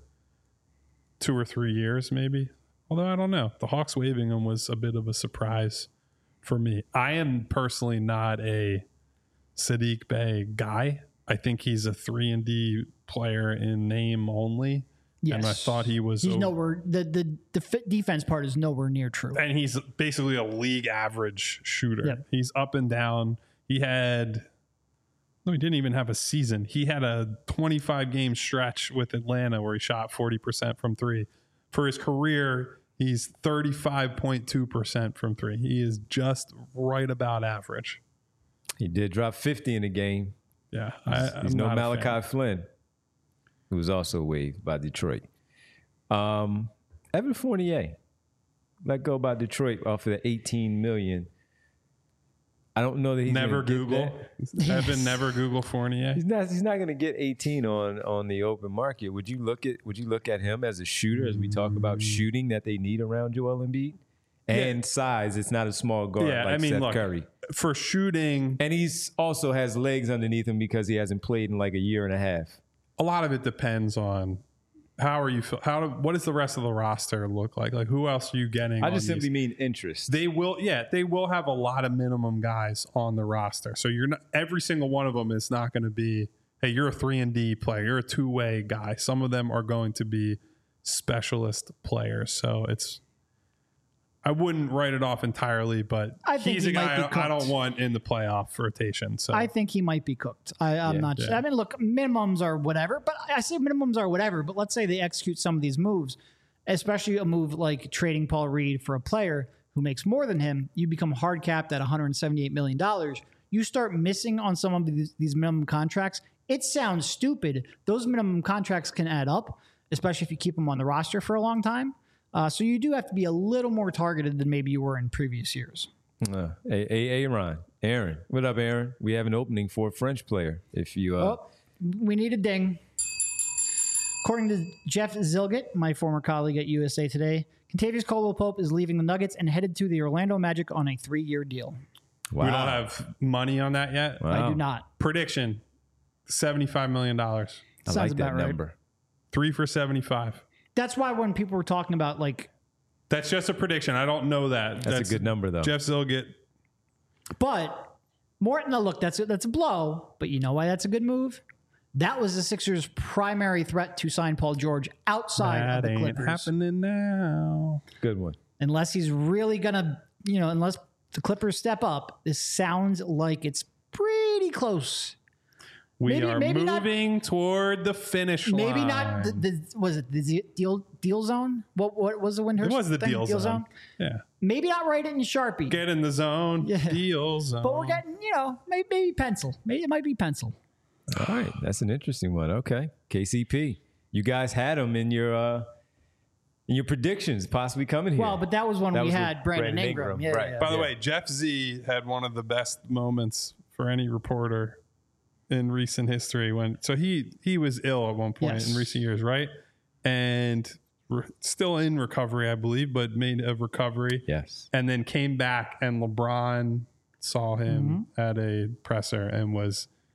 Speaker 2: two or three years, maybe. Although I don't know. The Hawks waiving him was a bit of a surprise for me. I am personally not a Sadiq Bey guy. I think he's a three and D player in name only.
Speaker 3: Yes.
Speaker 2: And I thought he was
Speaker 3: He's
Speaker 2: over-
Speaker 3: nowhere. The the the fit defense part is nowhere near true.
Speaker 2: and he's basically a league average shooter.
Speaker 3: Yep.
Speaker 2: He's up and down. He had no, he didn't even have a season. He had a twenty-five game stretch with Atlanta where he shot forty percent from three. For his career, he's thirty-five point two percent from three. He is just right about average.
Speaker 1: He did drop fifty in a game.
Speaker 2: Yeah.
Speaker 1: He's,
Speaker 2: I,
Speaker 1: he's
Speaker 2: I'm
Speaker 1: no
Speaker 2: not a fan.
Speaker 1: Malachi Flynn, who was also waived by Detroit. Um, Evan Fournier let go by Detroit off of the eighteen million. I don't know that he's
Speaker 2: Never
Speaker 1: gonna get
Speaker 2: Google.
Speaker 1: that.
Speaker 2: Evan, never Google Fournier.
Speaker 1: He's not. He's not going to get eighteen on on the open market. Would you look at? Would you look at him as a shooter as we talk about shooting that they need around Joel Embiid and
Speaker 2: Yeah.
Speaker 1: size? It's not a small guard
Speaker 2: Yeah,
Speaker 1: like
Speaker 2: I mean,
Speaker 1: Seth
Speaker 2: look,
Speaker 1: Curry,
Speaker 2: for shooting,
Speaker 1: and he's also has legs underneath him because he hasn't played in like a year and a half.
Speaker 2: a lot of it depends on how are you feel how do, what does the rest of the roster look like? Like who else are you getting?
Speaker 1: I
Speaker 2: on
Speaker 1: just simply
Speaker 2: these?
Speaker 1: mean interest.
Speaker 2: They will, yeah, they will have a lot of minimum guys on the roster. So you're not every single one of them is not going to be, hey, you're a three and D player, you're a two way guy. Some of them are going to be specialist players. So it's, I wouldn't write it off entirely, but
Speaker 3: I think
Speaker 2: he's
Speaker 3: he
Speaker 2: a
Speaker 3: might
Speaker 2: guy
Speaker 3: be
Speaker 2: I, I don't
Speaker 3: cooked. want
Speaker 2: want in the playoff rotation. So
Speaker 3: I think he might be cooked. I, I'm
Speaker 1: Yeah.
Speaker 3: not sure.
Speaker 2: Yeah.
Speaker 3: I mean, look, minimums are whatever, but I say minimums are whatever. But let's say they execute some of these moves, especially a move like trading Paul Reed for a player who makes more than him. You become hard capped at one hundred seventy-eight million dollars. You start missing on some of these, these minimum contracts. It sounds stupid. Those minimum contracts can add up, especially if you keep them on the roster for a long time. Uh, so you do have to be a little more targeted than maybe you were in previous years.
Speaker 1: Uh, hey, hey, Aaron, Aaron, what up, Aaron? We have an opening for a French player. If you, uh,
Speaker 3: Oh, we need a ding. According to Jeff Zilgett, my former colleague at U S A Today, Kentavious Caldwell-Pope is leaving the Nuggets and headed to the Orlando Magic on a three-year deal.
Speaker 1: wow.
Speaker 2: we don't have money on that yet.
Speaker 1: Wow.
Speaker 3: I do not.
Speaker 2: Prediction, seventy-five million dollars.
Speaker 1: I
Speaker 3: Sounds
Speaker 1: like that
Speaker 3: about right.
Speaker 1: number.
Speaker 2: Three for seventy-five.
Speaker 3: That's why when people were talking about like,
Speaker 2: That's just a prediction. I don't know that.
Speaker 1: That's, a good number, though.
Speaker 2: Jeff Zilgett.
Speaker 3: but Morton, now look, that's a, that's a blow. But you know why that's a good move? That was the Sixers' primary threat to sign Paul George outside of
Speaker 2: That
Speaker 3: the
Speaker 2: ain't
Speaker 3: Clippers.
Speaker 2: happening now.
Speaker 1: Good one.
Speaker 3: Unless he's really gonna, you know, unless the Clippers step up, this sounds like it's pretty close.
Speaker 2: We
Speaker 3: Maybe-
Speaker 2: are
Speaker 3: maybe not-
Speaker 2: moving toward the finish line.
Speaker 3: Maybe not the, the was it the z- deal deal zone? What what was the Windhurst?
Speaker 2: It was the
Speaker 3: thing?
Speaker 2: deal, zone. Yeah.
Speaker 3: Maybe not write it in Sharpie,
Speaker 2: Get in the zone.
Speaker 3: Yeah.
Speaker 2: Deal zone.
Speaker 3: but we're getting you know maybe, maybe pencil. Maybe it might be pencil.
Speaker 1: All right, that's an interesting one. Okay, K C P. You guys had him in your uh, in your predictions, possibly coming here.
Speaker 3: Well, but that was when
Speaker 1: That
Speaker 3: we
Speaker 1: was
Speaker 3: had
Speaker 1: with
Speaker 3: Brandon,
Speaker 1: Brandon
Speaker 3: Ingram.
Speaker 1: Ingram,
Speaker 3: Yeah,
Speaker 1: right.
Speaker 3: yeah.
Speaker 2: By the
Speaker 1: Yeah.
Speaker 2: way, Jeff Z had one of the best moments for any reporter in recent history when so he he was ill at one point
Speaker 3: Yes.
Speaker 2: in recent years, right? And re- still in recovery, I believe, but made a recovery.
Speaker 1: yes.
Speaker 2: And then came back and LeBron saw him
Speaker 3: Mm-hmm.
Speaker 2: at a presser and was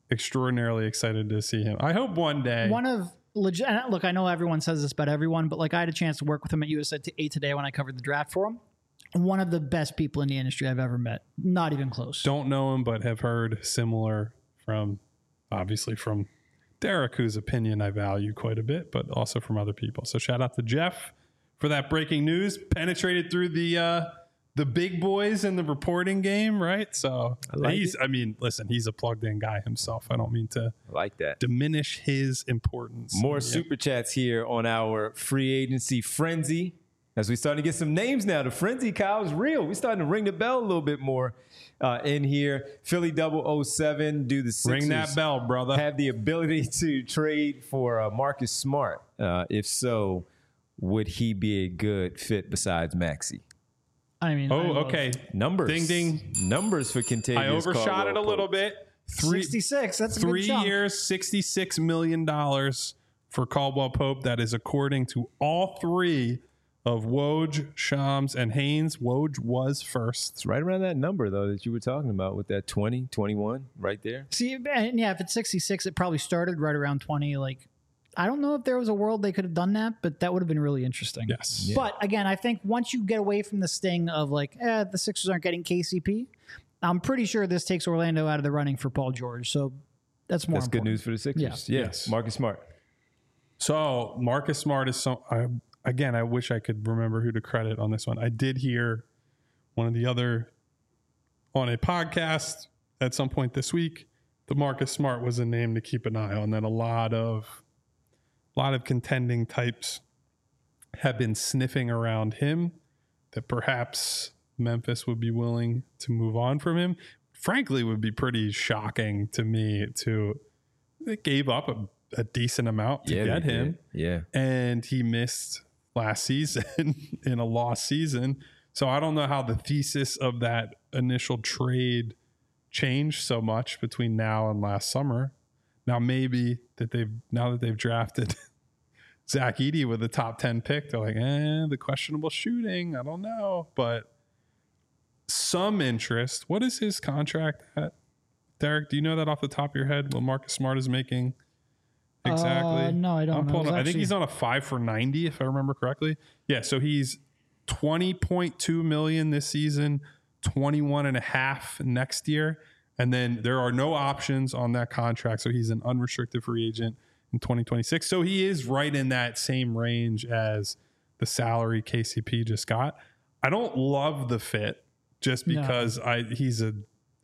Speaker 2: extraordinarily excited to see him. I hope one day.
Speaker 3: One of legit. Look, I know everyone says this about everyone, but like I had a chance to work with him at U S A Today when I covered the draft for him. One of the best people in the industry I've ever met. Not even close.
Speaker 2: Don't know him, but have heard similar from, obviously from Derek, whose opinion I value quite a bit, but also from other people. So shout out to Jeff for that breaking news. Penetrated through the uh, the big boys in the reporting game, right? So
Speaker 1: I like
Speaker 2: he's,
Speaker 1: it.
Speaker 2: I mean, listen, he's a plugged in guy himself. I don't mean to
Speaker 1: I like that.
Speaker 2: diminish his importance.
Speaker 1: More
Speaker 2: Yeah.
Speaker 1: super chats here on our free agency frenzy. As we starting to get some names now, the frenzy, Kyle, is real. We're starting to ring the bell a little bit more uh, in here. Philly double oh seven, do the Sixers
Speaker 2: Ring that bell, brother.
Speaker 1: have the ability to trade for uh, Marcus Smart? Uh, if so, would he be a good fit besides Maxey?
Speaker 3: I mean, I
Speaker 2: Oh,
Speaker 3: love-
Speaker 2: okay.
Speaker 1: Numbers.
Speaker 2: Ding, ding.
Speaker 1: Numbers for Kentavious
Speaker 2: I overshot
Speaker 1: Caldwell
Speaker 2: it a little
Speaker 1: Pope.
Speaker 2: bit. Three,
Speaker 3: sixty-six. That's a
Speaker 2: three
Speaker 3: good chunk.
Speaker 2: years, sixty-six million dollars for Caldwell Pope. That is according to all three of Woj, Shams, and Haynes. Woj was first.
Speaker 1: It's right around that number, though, that you were talking about with that twenty, twenty-one right there.
Speaker 3: See, and yeah, if it's sixty-six, it probably started right around twenty. Like, I don't know if there was a world they could have done that, but that would have been really interesting.
Speaker 2: Yes.
Speaker 1: Yeah.
Speaker 3: But again, I think once you get away from the sting of like, eh, the Sixers aren't getting K C P, I'm pretty sure this takes Orlando out of the running for Paul George. So that's more
Speaker 1: That's good
Speaker 3: important.
Speaker 1: news for the Sixers.
Speaker 3: Yeah.
Speaker 1: Yeah.
Speaker 2: Yes.
Speaker 1: Marcus Smart.
Speaker 2: So Marcus Smart is so. I, again, I wish I could remember who to credit on this one. I did hear one of the other on a podcast at some point this week. The Marcus Smart was a name to keep an eye on. That a lot of, a lot of contending types have been sniffing around him. That perhaps Memphis would be willing to move on from him. Frankly, would be pretty shocking to me. To they gave up a, a decent amount to
Speaker 1: Yeah,
Speaker 2: get
Speaker 1: they
Speaker 2: him.
Speaker 1: did. Yeah.
Speaker 2: And he missed last season in a lost season. So I don't know how the thesis of that initial trade changed so much between now and last summer. Now maybe that they've now that they've drafted Zach Edey with a top ten pick, they're like, eh, the questionable shooting. I don't know, but some interest. What is his contract at? Derek, do you know that off the top of your head? What Marcus Smart is making? Exactly.
Speaker 3: Uh, no, I don't
Speaker 2: I'm
Speaker 3: know.
Speaker 2: pulling
Speaker 3: It was
Speaker 2: up- I think
Speaker 3: actually-
Speaker 2: he's on a five for ninety, if I remember correctly. Yeah, so he's twenty point two million this season, twenty-one and a half next year. And then there are no options on that contract. So he's an unrestricted free agent in twenty twenty-six. So he is right in that same range as the salary K C P just got. I don't love the fit just
Speaker 3: No.
Speaker 2: because I he's a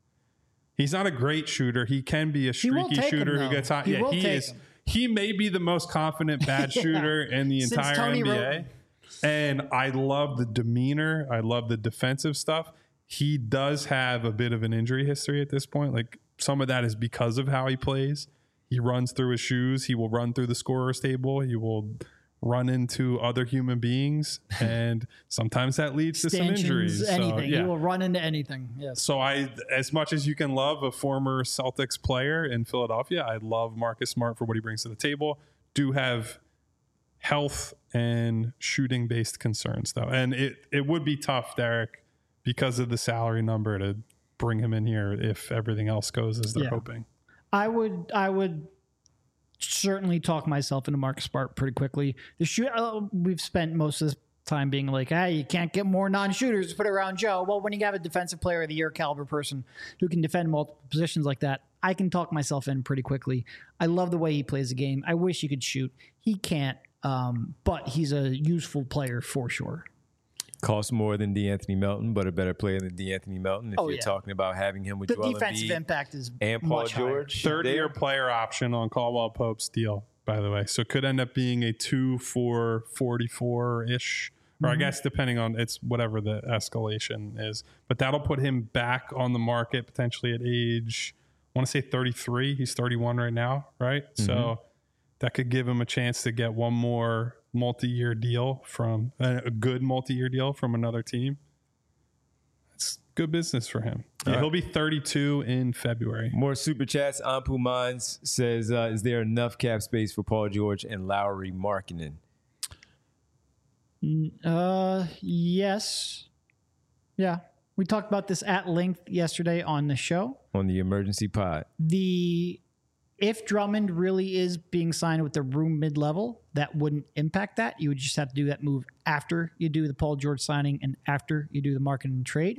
Speaker 2: he's not a great shooter. He can be a
Speaker 3: He will
Speaker 2: streaky
Speaker 3: take him,
Speaker 2: shooter who
Speaker 3: though.
Speaker 2: gets hot.
Speaker 3: He
Speaker 2: yeah,
Speaker 3: will
Speaker 2: he
Speaker 3: take
Speaker 2: is.
Speaker 3: him.
Speaker 2: He may be the most confident bad
Speaker 3: Yeah.
Speaker 2: shooter in the
Speaker 3: Since
Speaker 2: entire
Speaker 3: Tony
Speaker 2: N B A.
Speaker 3: Roten.
Speaker 2: And I love the demeanor. I love the defensive stuff. He does have a bit of an injury history at this point. Like some of that is because of how he plays. He runs through his shoes. He will run through the scorer's table. He will run into other human beings. And sometimes that leads to some
Speaker 3: Stanchions,
Speaker 2: injuries.
Speaker 3: anything.
Speaker 2: So, yeah.
Speaker 3: He will run into anything. Yes.
Speaker 2: So I, as much as you can love a former Celtics player in Philadelphia, I love Marcus Smart for what he brings to the table. Do have health and shooting based concerns though. And it, it would be tough, Derek, because of the salary number to bring him in here if everything else goes as they're
Speaker 3: Yeah.
Speaker 2: hoping.
Speaker 3: I would I would certainly talk myself into Marcus Smart pretty quickly. The shoot uh, we've spent most of this time being like, hey, you can't get more non-shooters to put around Joe. Well, when you have a defensive player of the year caliber person who can defend multiple positions like that, I can talk myself in pretty quickly. I love the way he plays the game. I wish he could shoot. He can't, um, but he's a useful player for sure.
Speaker 1: Costs more than DeAnthony Melton, but a better player than DeAnthony Melton. If
Speaker 3: Oh,
Speaker 1: you're
Speaker 3: yeah.
Speaker 1: talking about having him with
Speaker 3: The
Speaker 1: Joel
Speaker 3: defensive
Speaker 1: Embiid
Speaker 3: impact is
Speaker 1: and Paul
Speaker 3: much higher.
Speaker 1: George.
Speaker 2: Third
Speaker 1: there.
Speaker 2: year player option on Caldwell Pope's deal, by the way. So it could end up being a two for forty-four ish, or I guess depending on it's whatever the escalation is. But that'll put him back on the market potentially at age, I want to say thirty-three. He's thirty-one right now, right? So that could give him a chance to get one more multi-year deal from a, a good multi-year deal from another team. It's good business for him. Yeah,
Speaker 1: All right.
Speaker 2: he'll be thirty-two in February.
Speaker 1: More super chats. Ampu Mines says, uh, is there enough cap space for Paul George and Lowry Markkinen?
Speaker 3: Uh, yes. Yeah. We talked about this at length yesterday on the show.
Speaker 1: On the emergency pod.
Speaker 3: The if Drummond really is being signed with the room mid-level, that wouldn't impact that. You would just have to do that move after you do the Paul George signing and after you do the market and trade.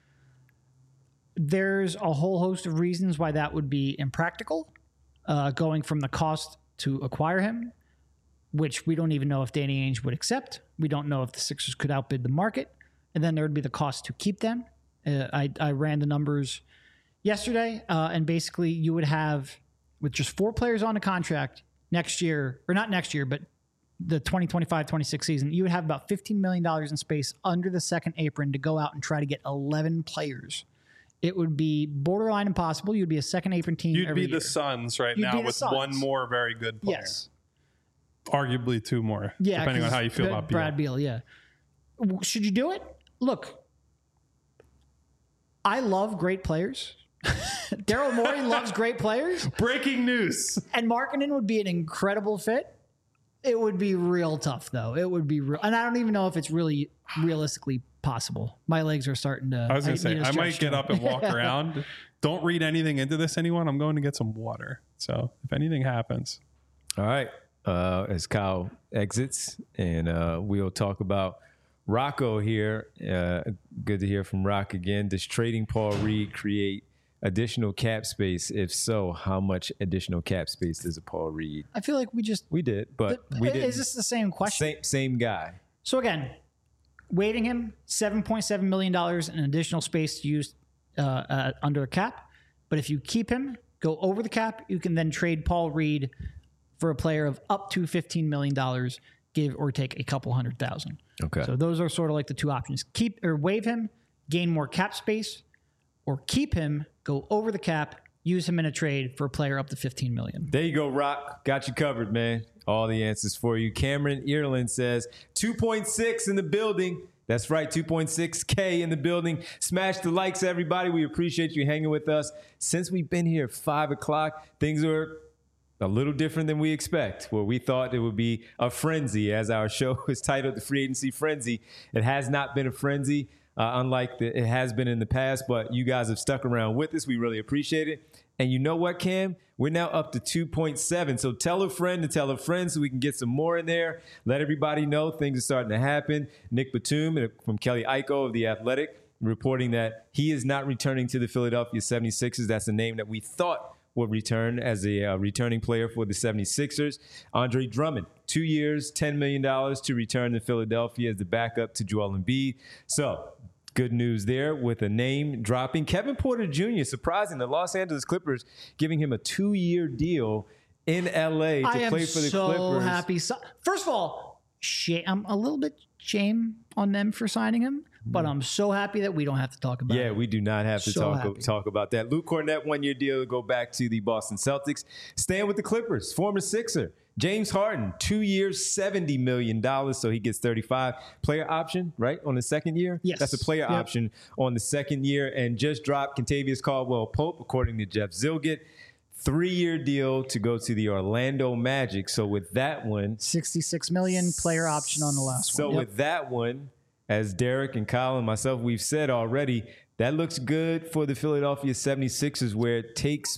Speaker 3: There's a whole host of reasons why that would be impractical, uh, going from the cost to acquire him, which we don't even know if Danny Ainge would accept. We don't know if the Sixers could outbid the market. And then there would be the cost to keep them. Uh, I, I ran the numbers yesterday, uh, and basically you would have, with just four players on a contract next year, or not next year, but the twenty twenty-five twenty-six season, you would have about fifteen million dollars in space under the second apron to go out and try to get eleven players. It would be borderline impossible. You'd be a second apron team.
Speaker 2: You'd
Speaker 3: every
Speaker 2: be the
Speaker 3: year.
Speaker 2: Suns right
Speaker 3: You'd
Speaker 2: now
Speaker 3: be
Speaker 2: with
Speaker 3: Suns.
Speaker 2: one more very good player.
Speaker 3: Yes.
Speaker 2: Arguably two more,
Speaker 3: Yeah,
Speaker 2: depending on
Speaker 3: 'cause
Speaker 2: how you feel
Speaker 3: Brad-
Speaker 2: about Beal.
Speaker 3: Brad Beal. Yeah. W- Should you do it? Look, I love great players. Daryl Morey loves great players,
Speaker 2: Breaking news.
Speaker 3: and Markkanen would be an incredible fit. It would be real tough, though. It would be real, and I don't even know if it's really realistically possible. My legs are starting to.
Speaker 2: I was going to say,
Speaker 3: need a
Speaker 2: I might
Speaker 3: stretch
Speaker 2: get
Speaker 3: too.
Speaker 2: up and walk around. Don't read anything into this, anyone. I'm going to get some water. So if anything happens.
Speaker 1: All right. Uh, as Kyle exits, and uh, we'll talk about Rocco here. Uh, good to hear from Rock again. Does trading Paul Reed create additional cap space? If so, how much additional cap space does a Paul Reed?
Speaker 3: I feel like we just.
Speaker 1: We did, but we did.
Speaker 3: Is this the same question?
Speaker 1: Same, same guy.
Speaker 3: So again, waiving him, seven point seven million dollars in additional space to use uh, uh, under a cap. But if you keep him, go over the cap, you can then trade Paul Reed for a player of up to fifteen million dollars, give or take a couple hundred thousand.
Speaker 1: Okay.
Speaker 3: So those are sort of like the two options. Keep or waive him, gain more cap space, or keep him, go over the cap, use him in a trade for a player up to fifteen million dollars.
Speaker 1: There you go, Rock. Got you covered, man. All the answers for you. Cameron Earland says two point six in the building. That's right, two point six K in the building. Smash the likes, everybody. We appreciate you hanging with us. Since we've been here at five o'clock, things are a little different than we expect, where we thought it would be a frenzy, as our show is titled The Free Agency Frenzy. It has not been a frenzy, uh, unlike the, it has been in the past, but you guys have stuck around with us. We really appreciate it. And you know what, Cam? We're now up to two point seven. So tell a friend to tell a friend so we can get some more in there. Let everybody know things are starting to happen. Nick Batum from Kelly Iko of The Athletic reporting that he is not returning to the Philadelphia seventy-sixers. That's the name that we thought would return as a uh, returning player for the seventy-sixers. Andre Drummond, two years, ten million dollars to return to Philadelphia as the backup to Joel Embiid. So good news there with a name dropping. Kevin Porter Junior, surprising, the Los Angeles Clippers giving him a two-year deal in L A to
Speaker 3: I
Speaker 1: play
Speaker 3: am
Speaker 1: for the
Speaker 3: so
Speaker 1: Clippers.
Speaker 3: happy. So, first of all, shame, I'm a little bit shame on them for signing him, but I'm so happy that we don't have to talk about
Speaker 1: Yeah,
Speaker 3: it.
Speaker 1: we do not have to
Speaker 3: So
Speaker 1: talk
Speaker 3: happy.
Speaker 1: talk about that. Luke Cornett, one-year deal to go back to the Boston Celtics. Staying with the Clippers, former Sixer. James Harden, two years, seventy million dollars, so he gets thirty-five. Player option, right, on the second year?
Speaker 3: Yes.
Speaker 1: That's a player
Speaker 3: Yep.
Speaker 1: option on the second year. And just dropped Kentavious Caldwell-Pope, according to Jeff Zilgett. Three-year deal to go to the Orlando Magic. So with that one,
Speaker 3: sixty-six million player option on the last
Speaker 1: so
Speaker 3: one. Yep.
Speaker 1: with that one, as Derek and Kyle and myself, we've said already, that looks good for the Philadelphia seventy-sixers, where it takes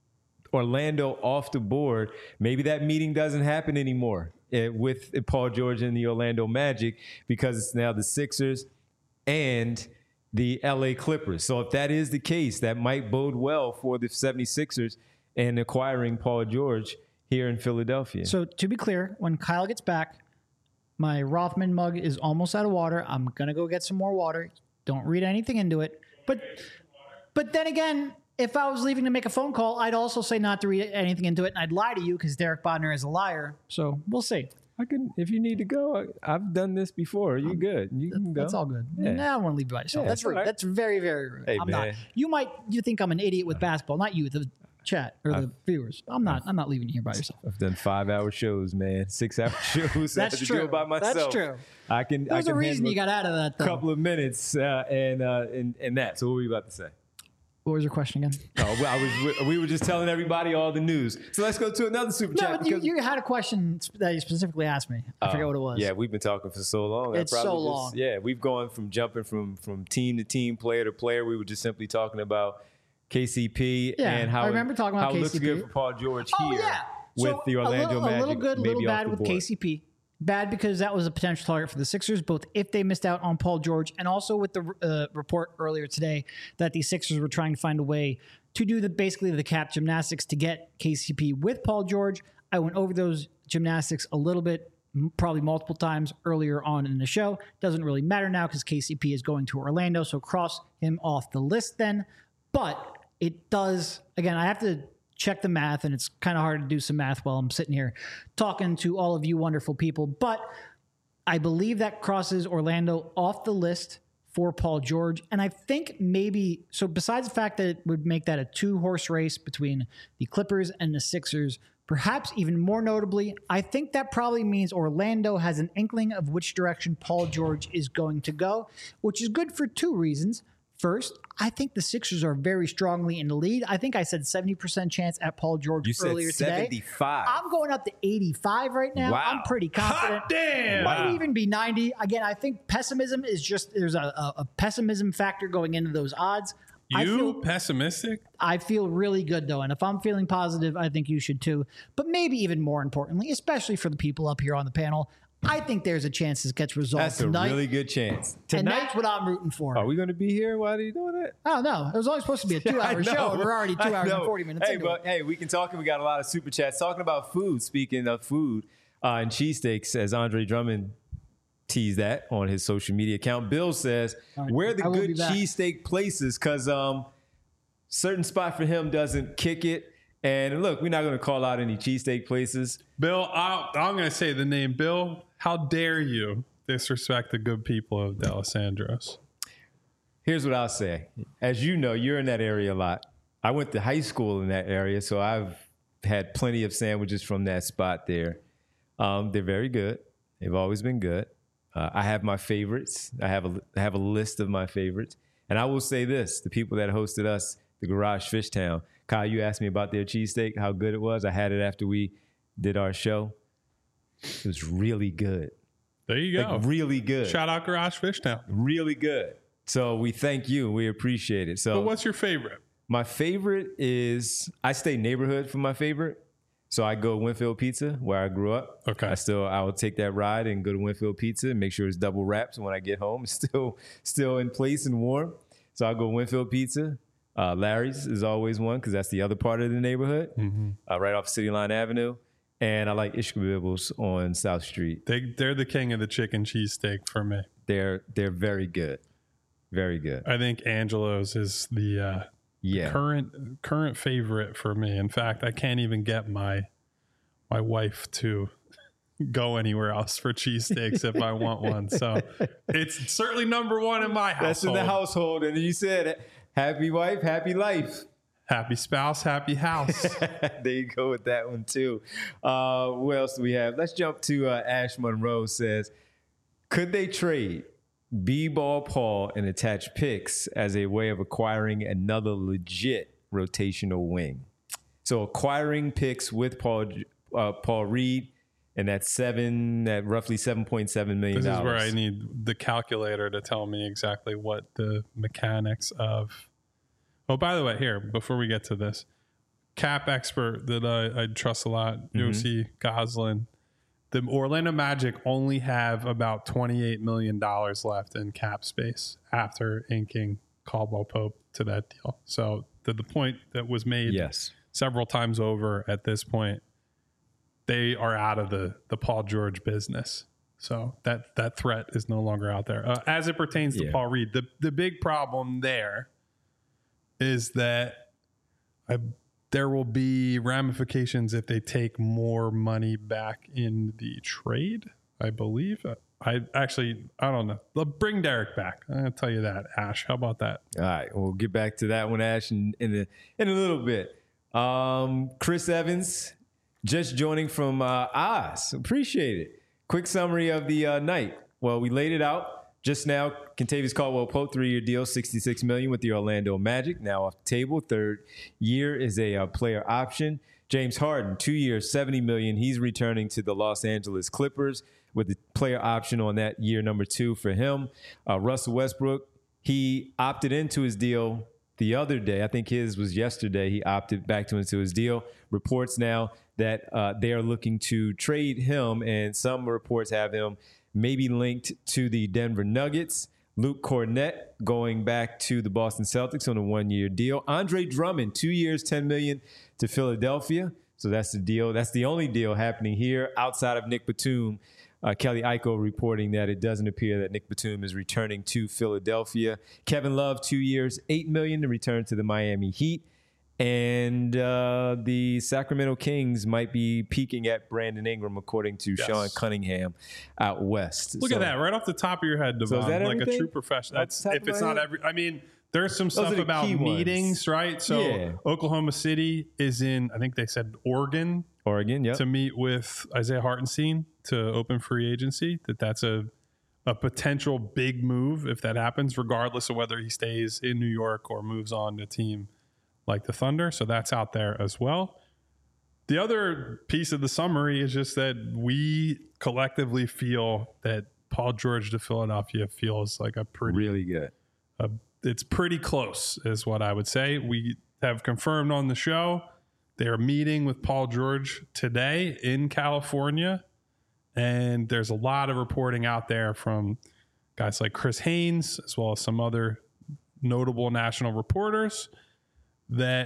Speaker 1: Orlando off the board. Maybe that meeting doesn't happen anymore eh, with Paul George and the Orlando Magic, because it's now the Sixers and the L A Clippers. So if that is the case, that might bode well for the seventy-sixers and acquiring Paul George here in Philadelphia.
Speaker 3: So to be clear, when Kyle gets back, my Rothman mug is almost out of water. I'm gonna go get some more water. Don't read anything into it. But but then again, if I was leaving to make a phone call, I'd also say not to read anything into it, and I'd lie to you because Derek Bodner is a liar. So we'll see.
Speaker 1: I can, if you need to go, I, I've done this before. You good? You can go.
Speaker 3: That's all good.
Speaker 1: Yeah.
Speaker 3: Nah, I don't want to leave you by yourself.
Speaker 1: Yeah,
Speaker 3: That's
Speaker 1: that's
Speaker 3: rude.
Speaker 1: all right.
Speaker 3: That's very, very rude.
Speaker 1: Hey,
Speaker 3: I'm not.
Speaker 1: man.
Speaker 3: You might you think I'm an idiot with basketball, not you, the chat or the viewers. I'm not. I'm not leaving you here by yourself.
Speaker 1: I've done five-hour shows, man. Six-hour shows. I
Speaker 3: That's
Speaker 1: had to
Speaker 3: true.
Speaker 1: do it by myself.
Speaker 3: That's true.
Speaker 1: I can. I
Speaker 3: There's
Speaker 1: can
Speaker 3: a reason
Speaker 1: handle
Speaker 3: you got out of that,
Speaker 1: a
Speaker 3: though.
Speaker 1: couple of minutes, uh, and, uh, and and that. So what were you about to say?
Speaker 3: What was your question again?
Speaker 1: Oh, well, I was. We were just telling everybody all the news. So let's go to another super
Speaker 3: No,
Speaker 1: chat.
Speaker 3: but you,
Speaker 1: because-
Speaker 3: you had a question that you specifically asked me. I forget what it was.
Speaker 1: Yeah, we've been talking for so long. I
Speaker 3: It's so
Speaker 1: probably just-
Speaker 3: long.
Speaker 1: Yeah, we've gone from jumping from from team to team, player to player. We were just simply talking about K C P,
Speaker 3: Yeah,
Speaker 1: and how
Speaker 3: I remember talking about
Speaker 1: how it looks
Speaker 3: K C P.
Speaker 1: good for Paul George
Speaker 3: Oh,
Speaker 1: here
Speaker 3: yeah.
Speaker 1: with
Speaker 3: So
Speaker 1: the Orlando
Speaker 3: a little,
Speaker 1: Magic.
Speaker 3: a little good,
Speaker 1: maybe
Speaker 3: little
Speaker 1: off
Speaker 3: bad
Speaker 1: the
Speaker 3: with
Speaker 1: board.
Speaker 3: K C P. Bad because that was a potential target for the Sixers, both if they missed out on Paul George and also with the uh, report earlier today that the Sixers were trying to find a way to do the basically the cap gymnastics to get K C P with Paul George. I went over those gymnastics a little bit, m- probably multiple times earlier on in the show. Doesn't really matter now because K C P is going to Orlando, so cross him off the list then. But it does, again, I have to check the math, and it's kind of hard to do some math while I'm sitting here talking to all of you wonderful people. But I believe that crosses Orlando off the list for Paul George. And I think maybe, so besides the fact that it would make that a two-horse race between the Clippers and the Sixers, perhaps even more notably, I think that probably means Orlando has an inkling of which direction Paul George is going to go, which is good for two reasons. First, I think the Sixers are very strongly in the lead. I think I said seventy percent chance at Paul George
Speaker 1: You said
Speaker 3: earlier today.
Speaker 1: seventy-five.
Speaker 3: I'm going up to eighty-five right now.
Speaker 1: Wow.
Speaker 3: I'm pretty confident.
Speaker 2: Hot damn!
Speaker 3: Might
Speaker 2: Wow.
Speaker 3: even be ninety. Again, I think pessimism is just, there's a, a, a pessimism factor going into those odds. I
Speaker 2: You
Speaker 3: feel,
Speaker 2: pessimistic?
Speaker 3: I feel really good though. And if I'm feeling positive, I think you should too. But maybe even more importantly, especially for the people up here on the panel, I think there's a chance this gets resolved
Speaker 1: That's a
Speaker 3: tonight.
Speaker 1: really good chance.
Speaker 3: and
Speaker 1: Tonight,
Speaker 3: that's what I'm rooting for.
Speaker 1: are we going to be here? Why are you doing that?
Speaker 3: I don't know. It was only supposed to be a two
Speaker 1: I
Speaker 3: hour
Speaker 1: know.
Speaker 3: show. And we're already two
Speaker 1: I
Speaker 3: hours and
Speaker 1: know.
Speaker 3: forty minutes
Speaker 1: Hey,
Speaker 3: into
Speaker 1: but
Speaker 3: it.
Speaker 1: hey, we can talk, and we got a lot of super chats talking about food. Speaking of food uh, and cheesesteaks, as Andre Drummond teased that on his social media account. Bill says,
Speaker 3: All right,
Speaker 1: where the
Speaker 3: I will
Speaker 1: good
Speaker 3: be back.
Speaker 1: cheesesteak places? Because um, certain spot for him doesn't kick it. And look, we're not going to call out any cheesesteak places.
Speaker 2: Bill, I'll, I'm going to say the name. Bill, how dare you disrespect the good people of D'Alessandro's?
Speaker 1: Here's what I'll say. As you know, you're in that area a lot. I went to high school in that area, so I've had plenty of sandwiches from that spot there. Um, they're very good. They've always been good. Uh, I have my favorites. I have a I have a list of my favorites. And I will say this, the people that hosted us, the Garage Fish Town, Kyle, you asked me about their cheesesteak, how good it was. I had it after we did our show. It was really good.
Speaker 2: There you go.
Speaker 1: Like really good.
Speaker 2: Shout out Garage Fish Town.
Speaker 1: Really good. So we thank you. We appreciate it. So
Speaker 2: But what's your favorite?
Speaker 1: my favorite is, I stay neighborhood for my favorite. So I go Winfield Pizza, where I grew up.
Speaker 2: Okay.
Speaker 1: I still, I will take that ride and go to Winfield Pizza and make sure it's double wrapped. So when I get home, it's still, still in place and warm. So I'll go Winfield Pizza. Uh, Larry's is always one because that's the other part of the neighborhood,
Speaker 2: Mm-hmm.
Speaker 1: uh, right off City Line Avenue. And I like Ishkabibbles on South Street.
Speaker 2: They, they're the king of the chicken cheesesteak for me.
Speaker 1: They're, they're very good. Very good.
Speaker 2: I think Angelo's is the uh,
Speaker 1: Yeah.
Speaker 2: current current favorite for me. In fact, I can't even get my my wife to go anywhere else for cheesesteaks if I want one. So it's certainly number one in my household.
Speaker 1: That's in the household. And you said, happy wife, happy life.
Speaker 2: Happy spouse, happy house.
Speaker 1: There you go with that one too. Uh, what else do we have? Let's jump to uh, Ash Monroe says, could they trade B-Ball Paul and attach picks as a way of acquiring another legit rotational wing? So acquiring picks with Paul uh, Paul Reed and that's seven, that roughly seven point seven million
Speaker 2: This
Speaker 1: dollars.
Speaker 2: is where I need the calculator to tell me exactly what the mechanics of. Oh, by the way, here, before we get to this, cap expert that I, I trust a lot, Josie Goslin, the Orlando Magic only have about twenty-eight million dollars left in cap space after inking Caldwell Pope to that deal. So to the point that was made
Speaker 1: Yes.
Speaker 2: several times over at this point, they are out of the, the Paul George business. So that, that threat is no longer out there. Uh, as it pertains to
Speaker 1: Yeah.
Speaker 2: Paul Reed, the, the big problem there is that I, there will be ramifications if they take more money back in the trade, I believe. I actually, I don't know. They'll bring Derek back. I'm going to tell you that, Ash. How about that?
Speaker 1: All right, we'll get back to that one, Ash, in in a, in a little bit. Um, Chris Evans, just joining from uh, Oz. Appreciate it. Quick summary of the uh, night. Well, we laid it out just now. Kentavious Caldwell-Pope, three-year deal, sixty-six million dollars with the Orlando Magic. Now off the table. Third year is a uh, player option. James Harden, two years, seventy million dollars. He's returning to the Los Angeles Clippers with the player option on that year number two for him. Uh, Russell Westbrook, he opted into his deal the other day. I think his was yesterday. He opted back to into his deal. Reports now that uh, they are looking to trade him, and some reports have him maybe linked to the Denver Nuggets. Luke Cornett going back to the Boston Celtics on a one-year deal. Andre Drummond, two years, ten million dollars to Philadelphia. So that's the deal. That's the only deal happening here outside of Nick Batum. Uh, Kelly Iko reporting that it doesn't appear that Nick Batum is returning to Philadelphia. Kevin Love, two years, eight million dollars to return to the Miami Heat. And uh, the Sacramento Kings might be peaking at Brandon Ingram, according to yes. Sean Cunningham out west.
Speaker 2: Look so, at that, right off the top of your head, Devon, so like everything? A true professional. That's if it's not head? every. I mean, there's some Those stuff about meetings, ones. right? So yeah. Oklahoma City is in, I think they said Oregon,
Speaker 1: Oregon, yeah,
Speaker 2: to meet with Isaiah Hartenstein to open free agency. That that's a a potential big move if that happens, regardless of whether he stays in New York or moves on to a team like the Thunder. So that's out there as well. The other piece of the summary is just that we collectively feel that Paul George to Philadelphia feels like a pretty
Speaker 1: really good.
Speaker 2: A, it's pretty close is what I would say. We have confirmed on the show they are meeting with Paul George today in California. And there's a lot of reporting out there from guys like Chris Haynes, as well as some other notable national reporters, that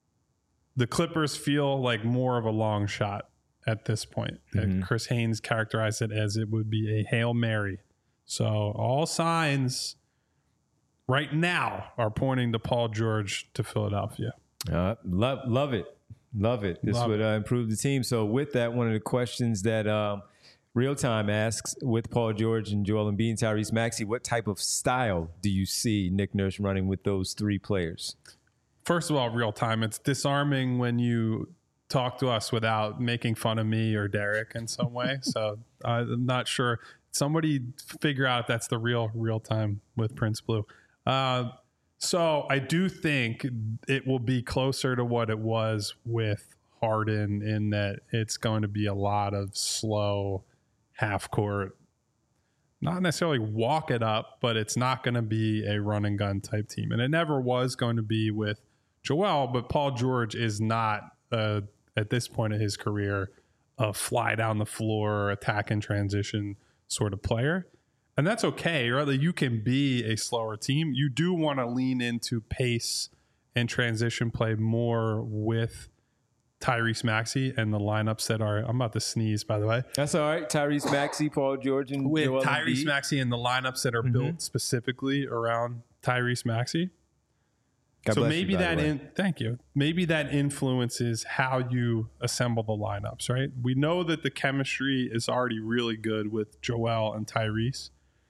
Speaker 2: the Clippers feel like more of a long shot at this point. Mm-hmm. Chris Haynes characterized it as it would be a Hail Mary. So all signs right now are pointing to Paul George to Philadelphia.
Speaker 1: Uh, love, love it. Love it. This love would uh, improve the team. So with that, one of the questions that um, Real Time asks, with Paul George and Joel Embiid and Tyrese Maxey, what type of style do you see Nick Nurse running with those three players?
Speaker 2: First of all, Real Time, it's disarming when you talk to us without making fun of me or Derek in some way. So I'm not sure. Somebody figure out if that's the real Real Time with Prince Blue. Uh, so I do think it will be closer to what it was with Harden in that it's going to be a lot of slow half court, not necessarily walk it up, but it's not going to be a run and gun type team. And it never was going to be with Joel, but Paul George is not, uh, at this point of his career, a fly down the floor, attack and transition sort of player. And that's okay, right? You can be a slower team. You do want to lean into pace and transition play more with Tyrese Maxey and the lineups that are, I'm about to sneeze, by the way.
Speaker 1: That's all right. Tyrese Maxey, Paul George, and
Speaker 2: with
Speaker 1: Joel
Speaker 2: Tyrese
Speaker 1: Embiid.
Speaker 2: Maxey and the lineups that are mm-hmm. built specifically around Tyrese Maxey.
Speaker 1: God
Speaker 2: so maybe
Speaker 1: you,
Speaker 2: that in, thank you. Maybe that influences how you assemble the lineups, right? We know that the chemistry is already really good with Joel and Tyrese.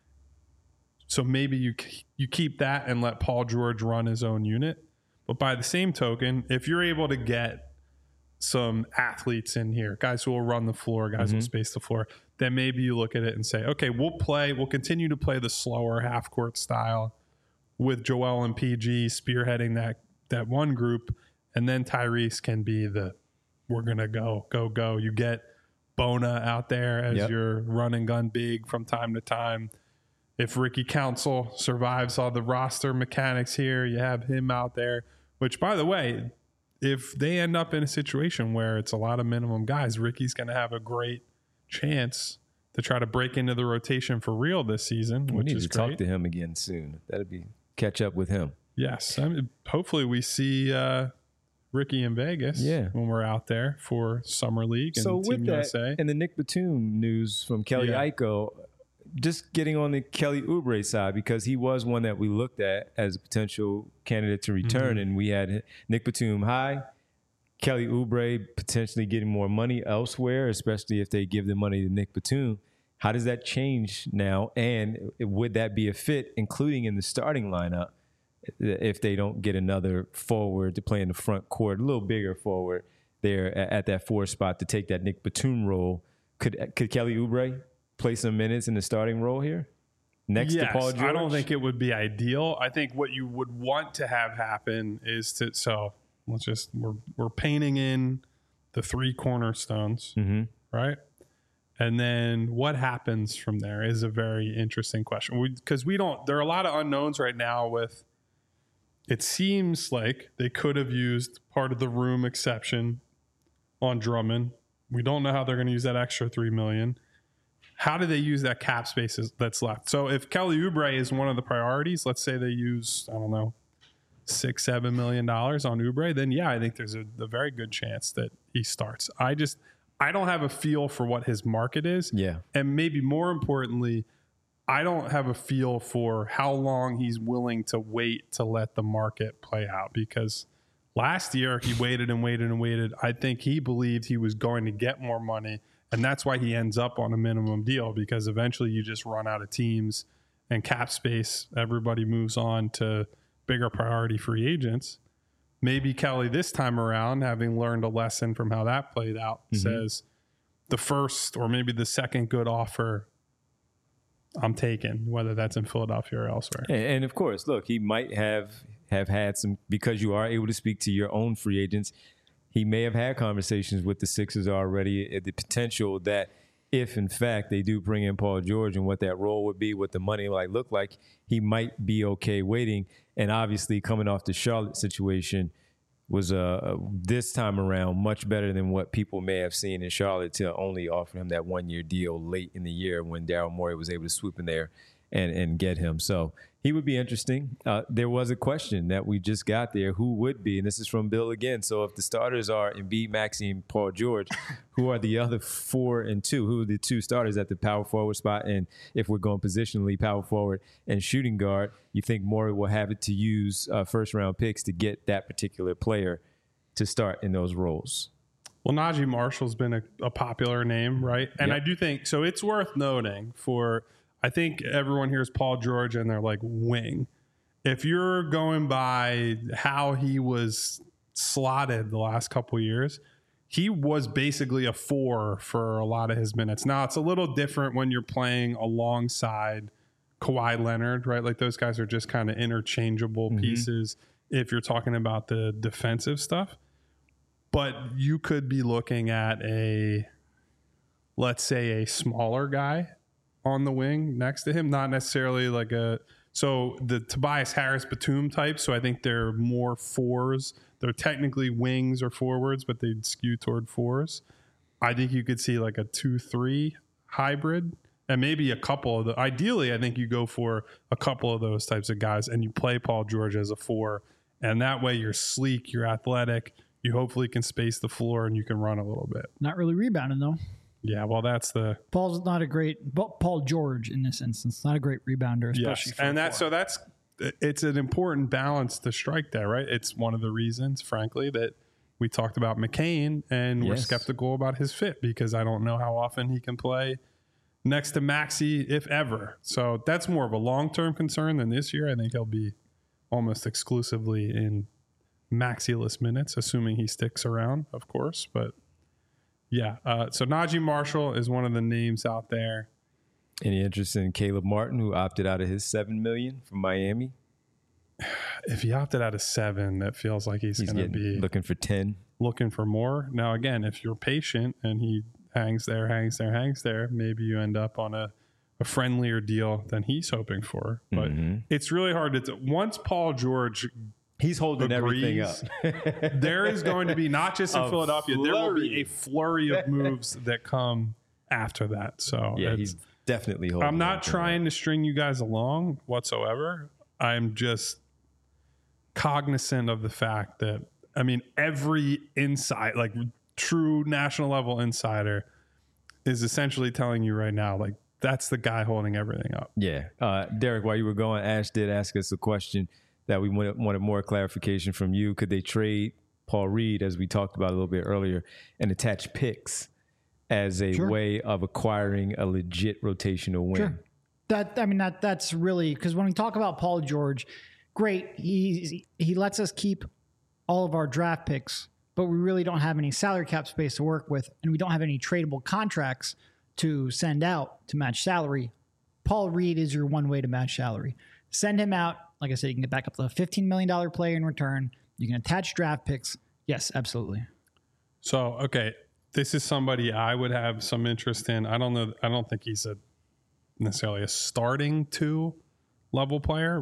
Speaker 2: So maybe you you keep that and let Paul George run his own unit. But by the same token, if you're able to get some athletes in here, guys who will run the floor, guys mm-hmm. who will space the floor, then maybe you look at it and say, okay, we'll play, we'll continue to play the slower half court style with Joel and P G spearheading that that one group, and then Tyrese can be the we're gonna go, go, go. You get Bona out there as yep. your run and gun big from time to time. If Ricky Council survives all the roster mechanics here, you have him out there, which, by the way, if they end up in a situation where it's a lot of minimum guys, Ricky's going to have a great chance to try to break into the rotation for real this season,
Speaker 1: we
Speaker 2: which
Speaker 1: need
Speaker 2: is
Speaker 1: to
Speaker 2: great.
Speaker 1: Talk to him again soon. That'd be catch up with him.
Speaker 2: Yes. I mean, hopefully we see uh, Ricky in Vegas
Speaker 1: yeah.
Speaker 2: when we're out there for Summer League and
Speaker 1: so
Speaker 2: Team
Speaker 1: with
Speaker 2: U
Speaker 1: that,
Speaker 2: S A.
Speaker 1: And the Nick Batum news from Kelly yeah. Iko, just getting on the Kelly Oubre side, because he was one that we looked at as a potential candidate to return. Mm-hmm. And we had Nick Batum high, Kelly Oubre potentially getting more money elsewhere, especially if they give the money to Nick Batum. How does that change now? And would that be a fit, including in the starting lineup, if they don't get another forward to play in the front court, a little bigger forward there at that four spot to take that Nick Batum role? Could could Kelly Oubre play some minutes in the starting role here next
Speaker 2: yes,
Speaker 1: to Paul George?
Speaker 2: I don't think it would be ideal. I think what you would want to have happen is to, so let's just, we're, we're painting in the three cornerstones,
Speaker 1: mm-hmm.
Speaker 2: right? And then what happens from there is a very interesting question, because we, we don't, there are a lot of unknowns right now with it seems like they could have used part of the room exception on Drummond. We don't know how they're going to use that extra three million dollars. How do they use that cap space that's left? So if Kelly Oubre is one of the priorities, let's say they use, I don't know, six, seven million dollars on Oubre, then yeah, I think there's a, a very good chance that he starts. I just, I don't have a feel for what his market is.
Speaker 1: Yeah.
Speaker 2: And maybe more importantly, I don't have a feel for how long he's willing to wait to let the market play out, because last year he waited and waited and waited. I think he believed he was going to get more money. And that's why he ends up on a minimum deal, because eventually you just run out of teams and cap space. Everybody moves on to bigger priority free agents. Maybe Kelly this time around, having learned a lesson from how that played out, mm-hmm. says the first or maybe the second good offer I'm taking, whether that's in Philadelphia or elsewhere.
Speaker 1: And, and of course, look, he might have, have had some, because you are able to speak to your own free agents, he may have had conversations with the Sixers already at the potential that if, in fact, they do bring in Paul George and what that role would be, what the money might look like, he might be okay waiting. And obviously, coming off the Charlotte situation was uh, this time around much better than what people may have seen in Charlotte to only offer him that one-year deal late in the year when Daryl Morey was able to swoop in there and, and get him. So he would be interesting. Uh, there was a question that we just got there. Who would be? And this is from Bill again. So if the starters are Embiid, Maxey, and Paul George, who are the other four and two? Who are the two starters at the power forward spot? And if we're going positionally, power forward and shooting guard, you think Morey will have it to use uh, first-round picks to get that particular player to start in those roles?
Speaker 2: Well, Najee Marshall's been a, a popular name, right? And yep. I do think, so it's worth noting for – I think everyone hears Paul George and they're like, wing. If you're going by how he was slotted the last couple of years, he was basically a four for a lot of his minutes. Now, it's a little different when you're playing alongside Kawhi Leonard, right? Like those guys are just kind of interchangeable mm-hmm. pieces if you're talking about the defensive stuff. But you could be looking at a, let's say, a smaller guy on the wing next to him, not necessarily like a, so the Tobias Harris Batum type. So I think they're more fours. They're technically wings or forwards, but they skew toward fours. I think you could see like a two, three hybrid and maybe a couple of the, ideally, I think you go for a couple of those types of guys and you play Paul George as a four. And that way you're sleek, you're athletic, you hopefully can space the floor and you can run a little bit.
Speaker 3: Not really rebounding though.
Speaker 2: Yeah, well, that's the
Speaker 3: Paul's not a great Paul George in this instance, not a great rebounder, especially.
Speaker 2: Yes, and that so that's it's an important balance to strike there, right? It's one of the reasons, frankly, that we talked about McCain and yes. we're skeptical about his fit because I don't know how often he can play next to Maxey, if ever. So that's more of a long-term concern than this year. I think he'll be almost exclusively in Maxey-less minutes, assuming he sticks around, of course, but. Yeah. Uh, so Najee Marshall is one of the names out there.
Speaker 1: Any interest in Caleb Martin, who opted out of his seven million dollars from Miami?
Speaker 2: If he opted out of seven, that feels like he's, he's going to be
Speaker 1: looking for ten,
Speaker 2: looking for more. Now, again, if you're patient and he hangs there, hangs there, hangs there, maybe you end up on a, a friendlier deal than he's hoping for. But mm-hmm. it's really hard to. T- once Paul George.
Speaker 1: He's holding agrees,
Speaker 2: everything up. There is going to be, not just in Philadelphia, flurry. There will be a flurry of moves that come after that. So
Speaker 1: yeah, he's definitely holding
Speaker 2: I'm not trying to string you guys along whatsoever. I'm just cognizant of the fact that, I mean, every insight, like true national level insider is essentially telling you right now, like, that's the guy holding everything up.
Speaker 1: Yeah. Uh, Derek, while you were going, Ash did ask us a question that we wanted, wanted more clarification from you. Could they trade Paul Reed, as we talked about a little bit earlier, and attach picks as a sure. way of acquiring a legit rotational win? Sure.
Speaker 3: That I mean, that that's really, because when we talk about Paul George, great, he he lets us keep all of our draft picks, but we really don't have any salary cap space to work with, and we don't have any tradable contracts to send out to match salary. Paul Reed is your one way to match salary. Send him out. Like I said, you can get back up to a fifteen million dollars player in return. You can attach draft picks. Yes, absolutely.
Speaker 2: So, okay, this is somebody I would have some interest in. I don't know. I don't think he's a necessarily a starting two level player.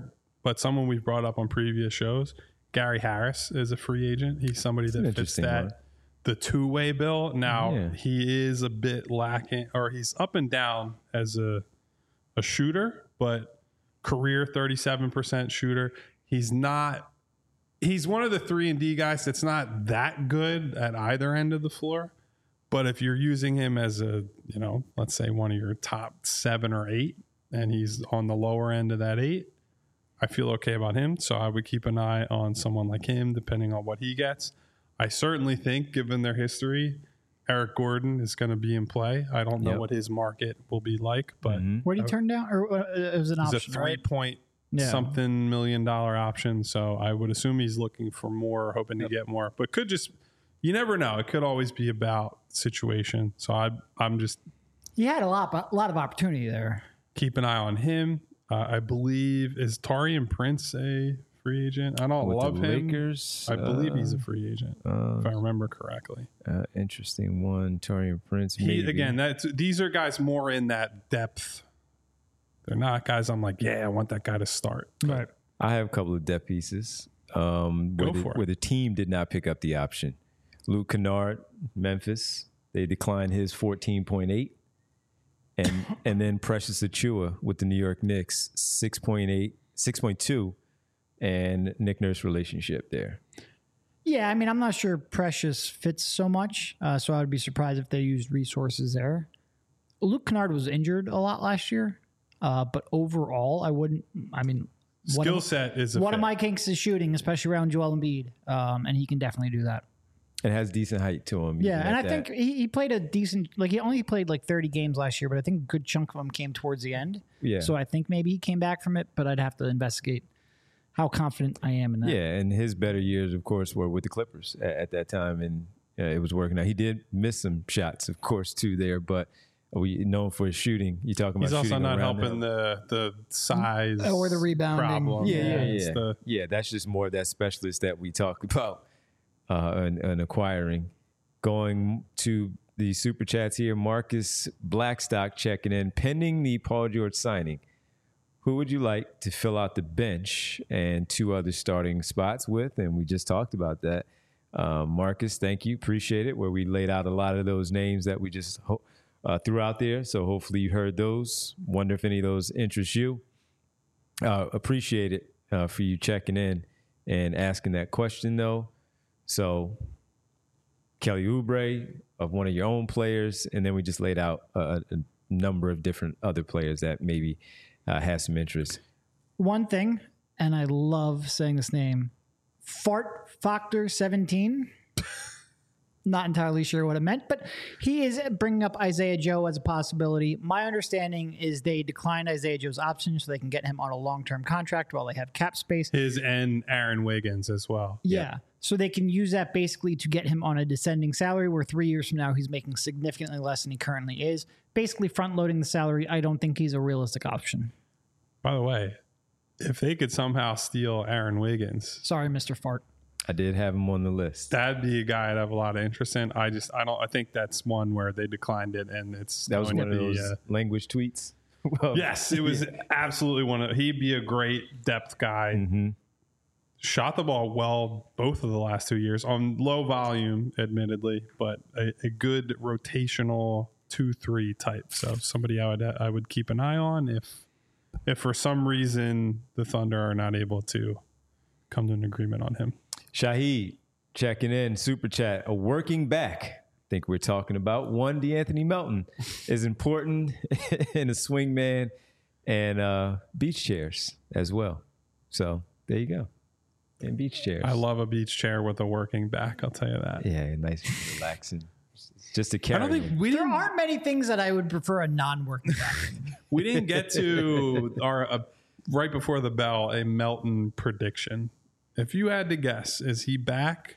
Speaker 2: but someone we've brought up on previous shows, Gary Harris is a free agent. He's somebody
Speaker 1: That's an
Speaker 2: that fits
Speaker 1: interesting
Speaker 2: that
Speaker 1: one.
Speaker 2: the two-way bill. Now
Speaker 1: Yeah.
Speaker 2: he is a bit lacking, or he's up and down as a a shooter, but career thirty-seven percent shooter. He's not. He's one of the three and D guys that's not that good at either end of the floor. But if you're using him as a, you know, let's say one of your top seven or eight, and he's on the lower end of that eight, I feel okay about him. So I would keep an eye on someone like him, depending on what he gets. I certainly think, given their history, Eric Gordon is going to be in play. I don't know
Speaker 1: Yep.
Speaker 2: what his market will be like, but
Speaker 1: Mhm.
Speaker 3: What did he turn down? Or uh, it was an
Speaker 2: he's
Speaker 3: option,
Speaker 2: a three
Speaker 3: right?
Speaker 2: point
Speaker 3: Yeah.
Speaker 2: something million dollar option. So I would assume he's looking for more, hoping to get more, but could just, you never know. It could always be about situation. So I, I'm just
Speaker 3: He had a lot, a lot of opportunity there.
Speaker 2: keep an eye on him. Uh, I believe, is Taurean Prince a free agent? I don't
Speaker 1: With
Speaker 2: love
Speaker 1: the
Speaker 2: him.
Speaker 1: Lakers,
Speaker 2: I believe he's a
Speaker 1: uh,
Speaker 2: free agent,
Speaker 1: uh,
Speaker 2: if I remember correctly.
Speaker 1: uh, interesting one. Taurean Prince.
Speaker 2: He,
Speaker 1: maybe.
Speaker 2: again, that's these are guys more in that depth. They're not guys I'm like, yeah, I want that guy to start.
Speaker 3: Right.
Speaker 1: I have a couple of depth pieces. Um,
Speaker 2: Go
Speaker 1: where, the,
Speaker 2: for it.
Speaker 1: where the team did not pick up the option. Luke Kennard, Memphis. They declined his fourteen point eight. And and then Precious Achua with the New York Knicks, six point eight, six point two, and Nick Nurse relationship there.
Speaker 3: Yeah, I mean, I'm not sure Precious fits so much, uh, so I would be surprised if they used resources there. Luke Kennard was injured a lot last year, uh, but overall, I wouldn't. I mean, one
Speaker 2: Skill
Speaker 3: of,
Speaker 2: set is a
Speaker 3: one
Speaker 2: fit.
Speaker 3: of my kinks is shooting, especially around Joel Embiid, um, and he can definitely do that.
Speaker 1: It has decent height to him.
Speaker 3: Yeah,
Speaker 1: even
Speaker 3: and I
Speaker 1: at that.
Speaker 3: think he, he played a decent. Like he only played like thirty games last year, but I think a good chunk of them came towards the end.
Speaker 1: Yeah.
Speaker 3: So I think maybe he came back from it, but I'd have to investigate how confident I am in that.
Speaker 1: Yeah, and his better years, of course, were with the Clippers at, at that time, and uh, it was working out. He did miss some shots, of course, too there, but we known for his shooting. You talking about
Speaker 2: He's also
Speaker 1: shooting
Speaker 2: not
Speaker 1: around
Speaker 2: helping
Speaker 1: there.
Speaker 2: the the size
Speaker 3: Or the rebounding.
Speaker 2: problem.
Speaker 1: Yeah, yeah,
Speaker 2: It's
Speaker 1: yeah.
Speaker 2: the-
Speaker 1: yeah, that's just more of that specialist that we talk about uh, and, and acquiring. Going to the super chats here, Marcus Blackstock checking in. Pending the Paul George signing, who would you like to fill out the bench and two other starting spots with? And we just talked about that. Uh, Marcus, thank you. Appreciate it. Where we laid out a lot of those names that we just ho- uh, threw out there. So hopefully you heard those. Wonder if any of those interest you. Uh, appreciate it uh, for you checking in and asking that question, though. So Kelly Oubre of one of your own players, and then we just laid out a, a number of different other players that maybe uh, have some interest.
Speaker 3: One thing, and I love saying this name, Fart Factor seventeen. Not entirely sure what it meant, but he is bringing up Isaiah Joe as a possibility. My understanding is they declined Isaiah Joe's option so they can get him on a long-term contract while they have cap space.
Speaker 2: his and Aaron Wiggins as well.
Speaker 3: Yeah. So they can use that basically to get him on a descending salary where three years from now he's making significantly less than he currently is. Basically front loading the salary. I don't think he's a realistic option.
Speaker 2: By the way, if they could somehow steal Aaron Wiggins,
Speaker 3: Sorry, Mister Fart.
Speaker 1: I did have him on the list.
Speaker 2: that'd be a guy I'd have a lot of interest in. I just, I don't, I think that's one where they declined it, and it's
Speaker 1: That was
Speaker 2: going
Speaker 1: one
Speaker 2: to
Speaker 1: of
Speaker 2: be,
Speaker 1: those
Speaker 2: uh,
Speaker 1: language tweets. Well,
Speaker 2: yes, it was absolutely one of. He'd be a great depth guy.
Speaker 1: Mm-hmm.
Speaker 2: Shot the ball well both of the last two years on low volume, admittedly, but a, a good rotational two three type. So somebody I would I would keep an eye on if if for some reason the Thunder are not able to come to an agreement on him.
Speaker 1: Shahid checking in, super chat, a working back. I think we're talking about one DeAnthony Melton is important in a swing man and uh, beach chairs as well. So there you go. And beach chairs.
Speaker 2: I love a beach chair with a working back. I'll tell you that.
Speaker 1: Yeah, nice, relaxing. Just to
Speaker 2: I
Speaker 1: carry.
Speaker 2: don't think
Speaker 1: him.
Speaker 2: we
Speaker 3: There
Speaker 2: didn't.
Speaker 3: aren't many things that I would prefer a non-working back.
Speaker 2: We didn't get to our uh, right before the bell a Melton prediction. If you had to guess, is he back?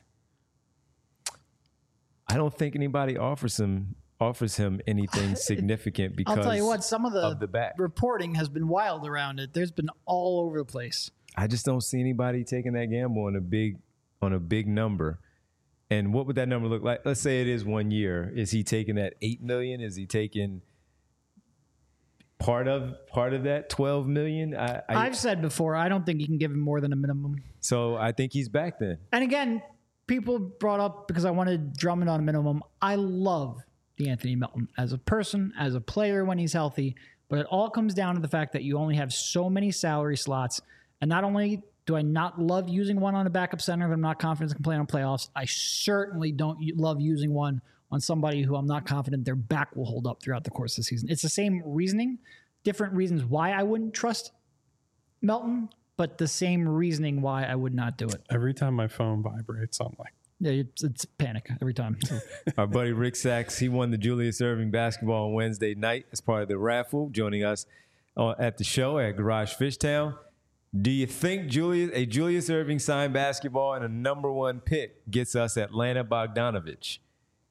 Speaker 1: I don't think anybody offers him offers him anything significant because
Speaker 3: I'll tell you what, some of the,
Speaker 1: of the back.
Speaker 3: reporting has been wild around it. There's been all over the place.
Speaker 1: I just don't see anybody taking that gamble on a big on a big number. And what would that number look like? Let's say it is one year. Is he taking that eight million? Is he taking part of part of that twelve million. I, I,
Speaker 3: I've said before, I don't think you can give him more than a minimum.
Speaker 1: so I think he's back then.
Speaker 3: And again, people brought up because I wanted Drummond on a minimum. I love DeAnthony Melton as a person, as a player when he's healthy, but it all comes down to the fact that you only have so many salary slots. And not only do I not love using one on a backup center if I'm not confident can play on playoffs, I certainly don't love using one on somebody who I'm not confident their back will hold up throughout the course of the season. It's the same reasoning, different reasons why I wouldn't trust Melton, but the same reasoning why I would not do it.
Speaker 2: Every time my phone vibrates, I'm like,
Speaker 3: Yeah, it's, it's panic every time.
Speaker 1: Our buddy Rick Sachs, he won the Julius Erving basketball on Wednesday night as part of the raffle, joining us uh, at the show at Garage Fishtown. Do you think Julius, a Julius Erving signed basketball and a number one pick gets us Atlanta Bogdanovich?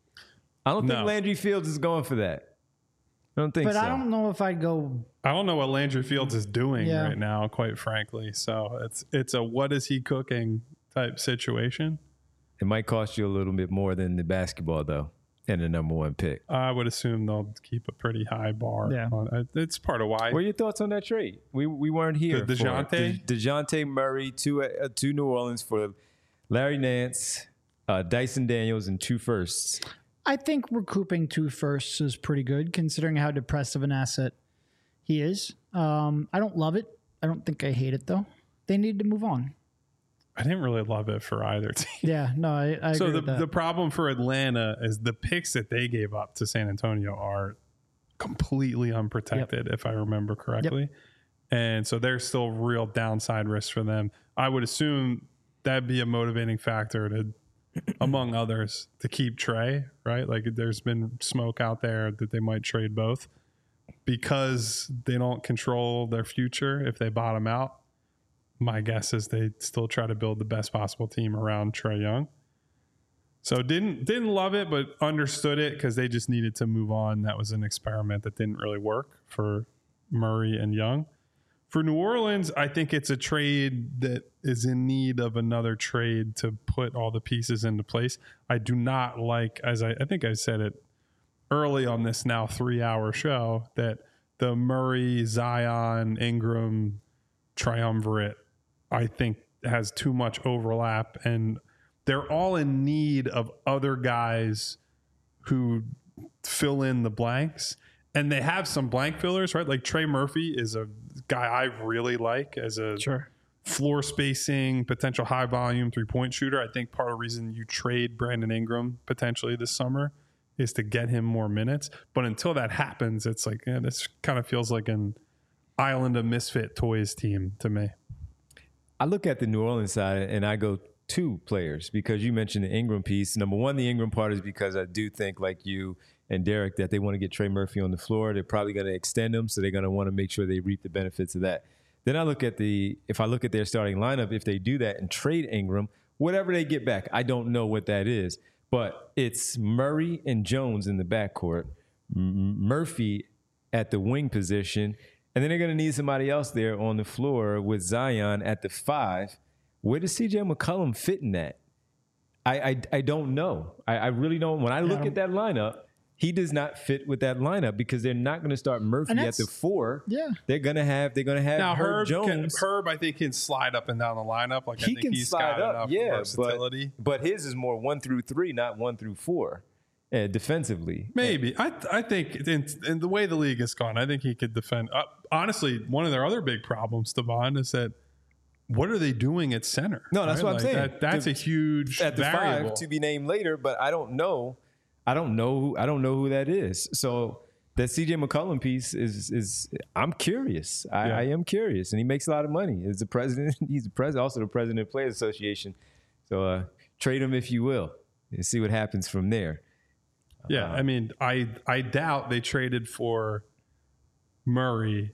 Speaker 1: I don't think
Speaker 2: No.
Speaker 1: Landry Fields is going for that. I don't think
Speaker 3: But
Speaker 1: so.
Speaker 3: I don't know if I'd go.
Speaker 2: I don't know what Landry Fields is doing
Speaker 3: Yeah.
Speaker 2: right now, quite frankly. So it's it's a what is he cooking type situation.
Speaker 1: It might cost you a little bit more than the basketball, though, and the number one pick.
Speaker 2: I would assume they'll keep a pretty high bar.
Speaker 3: Yeah.
Speaker 2: On, uh, it's part of why.
Speaker 1: What are your thoughts on that trade? We we weren't here.
Speaker 2: The
Speaker 1: for it.
Speaker 2: DeJounte?
Speaker 1: De, DeJounte Murray to uh, to New Orleans for Larry Nance, uh, Dyson Daniels, and two firsts.
Speaker 3: I think recouping two firsts is pretty good considering how depressive an asset he is. Um, I don't love it. I don't think I hate it, though. They need to move on.
Speaker 2: I didn't really love it for either team.
Speaker 3: Yeah, no, I, I
Speaker 2: So
Speaker 3: agree
Speaker 2: the
Speaker 3: with that.
Speaker 2: the problem for Atlanta is the picks that they gave up to San Antonio are completely unprotected, if I remember correctly. And so there's still real downside risk for them. I would assume that'd be a motivating factor to, among others, to keep Trey, right? Like there's been smoke out there that they might trade both because they don't control their future if they bottom out. My guess is they still try to build the best possible team around Trae Young. So didn't didn't love it, but understood it because they just needed to move on. That was an experiment that didn't really work for Murray and Young. For New Orleans, I think it's a trade that is in need of another trade to put all the pieces into place. I do not like, as I, I think I said it early on this now three-hour show, that the Murray, Zion, Ingram triumvirate, I think, has too much overlap, and they're all in need of other guys who fill in the blanks. And they have some blank fillers, right? Like Trey Murphy is a guy I really like as a
Speaker 3: Sure.
Speaker 2: floor spacing, potential high volume three point shooter. I think part of the reason you trade Brandon Ingram potentially this summer is to get him more minutes. But until that happens, it's like, yeah, this kind of feels like an Island of Misfit Toys team to me.
Speaker 1: I look at the New Orleans side and I go two players because you mentioned the Ingram piece. Number one, the Ingram part is because I do think, like you and Derek, that they want to get Trey Murphy on the floor. They're probably going to extend him, so they're going to want to make sure they reap the benefits of that. Then I look at the, if I look at their starting lineup, if they do that and trade Ingram, whatever they get back, I don't know what that is, but it's Murray and Jones in the backcourt, M- Murphy at the wing position, and then they're going to need somebody else there on the floor with Zion at the five. Where does C J McCollum fit in that? I I, I don't know. I, I really don't. When I look
Speaker 3: Yeah.
Speaker 1: at that lineup, he does not fit with that lineup because they're not going to start Murphy
Speaker 3: And
Speaker 1: at
Speaker 3: that's-
Speaker 1: the four.
Speaker 3: Yeah.
Speaker 1: They're going to have they're going to have
Speaker 2: Now
Speaker 1: Herb,
Speaker 2: Herb, can,
Speaker 1: Jones.
Speaker 2: Herb, I think can slide up and down the lineup. Like I
Speaker 1: he
Speaker 2: think
Speaker 1: can
Speaker 2: he's
Speaker 1: slide
Speaker 2: got
Speaker 1: up,
Speaker 2: enough
Speaker 1: yeah,
Speaker 2: versatility.
Speaker 1: but, but his is more one through three, not one through four, uh, defensively.
Speaker 2: Maybe I I think in, in the way the league has gone, I think he could defend. Uh, honestly, one of their other big problems, Devon, is that what are they doing at center?
Speaker 1: No, that's what I'm
Speaker 2: Like,
Speaker 1: saying.
Speaker 2: That, that's
Speaker 1: The-
Speaker 2: a huge
Speaker 1: At the
Speaker 2: variable.
Speaker 1: five to be named later, but I don't know. I don't know. Who, I don't know who that is. So that C J McCollum piece is is. I'm curious. I,
Speaker 2: Yeah.
Speaker 1: I am curious, and he makes a lot of money. As the president, he's the president, also the president of Players Association. So uh, trade him if you will, and see what happens from there.
Speaker 2: Yeah,
Speaker 1: Uh,
Speaker 2: I mean, I I doubt they traded for Murray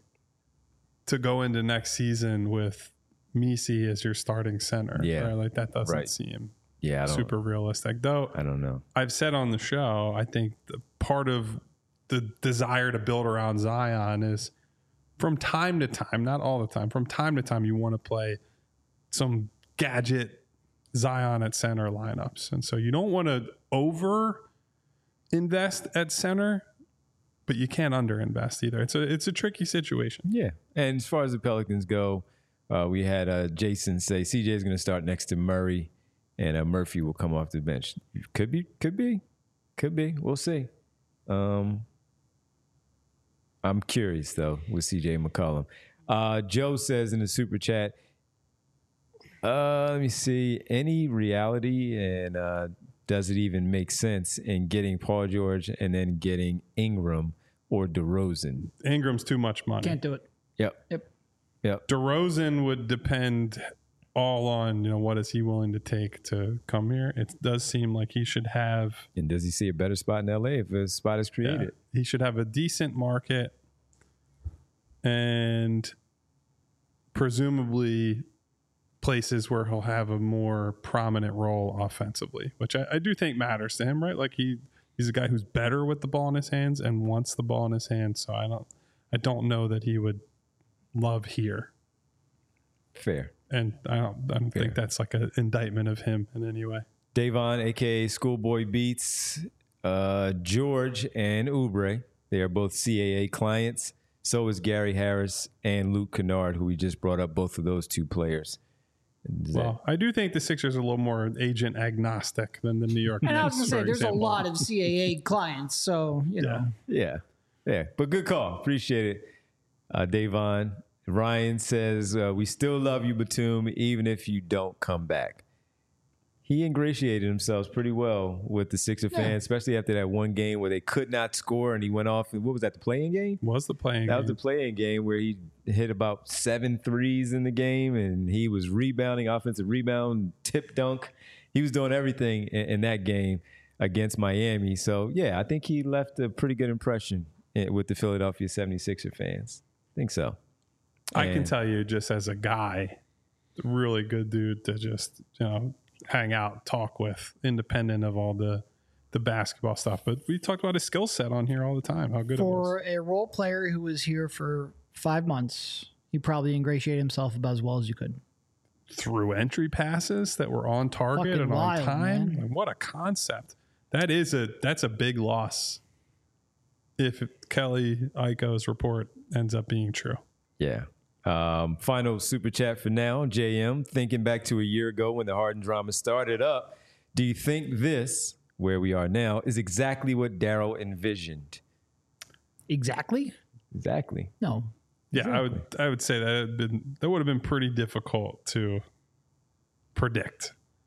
Speaker 2: to go into next season with Misi as your starting center.
Speaker 1: Yeah.
Speaker 2: right? Like that doesn't
Speaker 1: Right.
Speaker 2: seem
Speaker 1: Yeah, I don't.
Speaker 2: super realistic. Though
Speaker 1: I don't know.
Speaker 2: I've said on the show, I think the part of the desire to build around Zion is from time to time, not all the time, from time to time, you want to play some gadget Zion at center lineups. And so you don't want to over invest at center but you can't underinvest either. It's a it's a tricky situation.
Speaker 1: Yeah. And as far as the Pelicans go, uh, we had uh, Jason say C J is going to start next to Murray, and uh, Murphy will come off the bench. Could be, could be, could be. We'll see. Um, I'm curious, though, with C J McCollum. Uh, Joe says in the super chat, uh, let me see, any reality and uh, does it even make sense in getting Paul George and then getting Ingram or DeRozan?
Speaker 2: Ingram's too much money.
Speaker 3: Can't do it.
Speaker 1: Yep.
Speaker 3: Yep.
Speaker 1: Yep.
Speaker 2: DeRozan would depend all on, you know, what is he willing to take to come here. It does seem like he should have.
Speaker 1: And does he see a better spot in L A if a spot is created?
Speaker 2: Yeah, he should have a decent market and presumably places where he'll have a more prominent role offensively, which I, I do think matters to him, right? Like he he's a guy who's better with the ball in his hands and wants the ball in his hands. So I don't I don't know that he would love here.
Speaker 1: Fair.
Speaker 2: And I don't I don't
Speaker 1: Fair.
Speaker 2: think that's like an indictment of him in any way.
Speaker 1: Davon, a k a. Schoolboy Beats, uh, George, and Oubre. They are both C A A clients. So is Gary Harris and Luke Kennard, who we just brought up, both of those two players. Does
Speaker 2: Well, I do think the Sixers are a little more agent agnostic than the New York Knicks.
Speaker 3: And I was going to say,
Speaker 2: for
Speaker 3: there's
Speaker 2: example.
Speaker 3: a lot of C A A clients, so, you know.
Speaker 1: Yeah. Yeah. But good call. Appreciate it. Uh, Davon. Ryan says, uh, we still love you, Batum, even if you don't come back. He ingratiated himself pretty well with the Sixer
Speaker 3: Yeah.
Speaker 1: fans, especially after that one game where they could not score and he went off. What was that, the playing game?
Speaker 2: Was the playing
Speaker 1: That
Speaker 2: game.
Speaker 1: was the playing game where he hit about seven threes in the game and he was rebounding, offensive rebound, tip dunk. He was doing everything in, in that game against Miami. So, yeah, I think he left a pretty good impression with the Philadelphia seventy-sixer fans. I think so.
Speaker 2: I can
Speaker 1: And-
Speaker 2: tell you just as a guy, really good dude to just, you know, hang out, talk with, independent of all the the basketball stuff. But we talked about his skill set on here all the time, how good it was.
Speaker 3: For a role player who was here for five months, he probably ingratiated himself about as well as you could.
Speaker 2: Through entry passes that were on target
Speaker 3: Fucking
Speaker 2: and
Speaker 3: wild,
Speaker 2: on time.
Speaker 3: man.
Speaker 2: Like, what a concept. That is a that's a big loss if Kelly Iko's report ends up being true.
Speaker 1: Yeah. Um, final super chat for now. J M, thinking back to a year ago when the Harden drama started up, do you think this, where we are now, is exactly what Daryl envisioned?
Speaker 3: Exactly?
Speaker 1: Exactly.
Speaker 3: No.
Speaker 2: Yeah, I would I would say that had been that would have been pretty difficult to predict.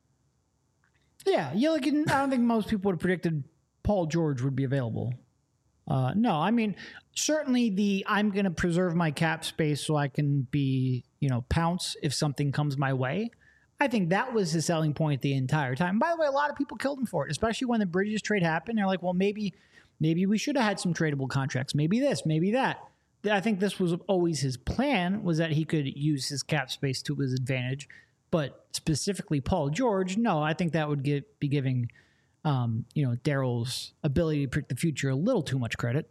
Speaker 3: Yeah, you look. I don't think most people would have predicted Paul George would be available. Uh, no, I mean certainly the I'm going to preserve my cap space so I can be, you know, pounce if something comes my way. I think that was his selling point the entire time. By the way, a lot of people killed him for it, especially when the Bridges trade happened. They're like, well, maybe, maybe we should have had some tradable contracts. Maybe this, maybe that. I think this was always his plan, was that he could use his cap space to his advantage. But specifically Paul George, no, I think that would get, be giving, um, you know, Daryl's ability to predict the future a little too much credit.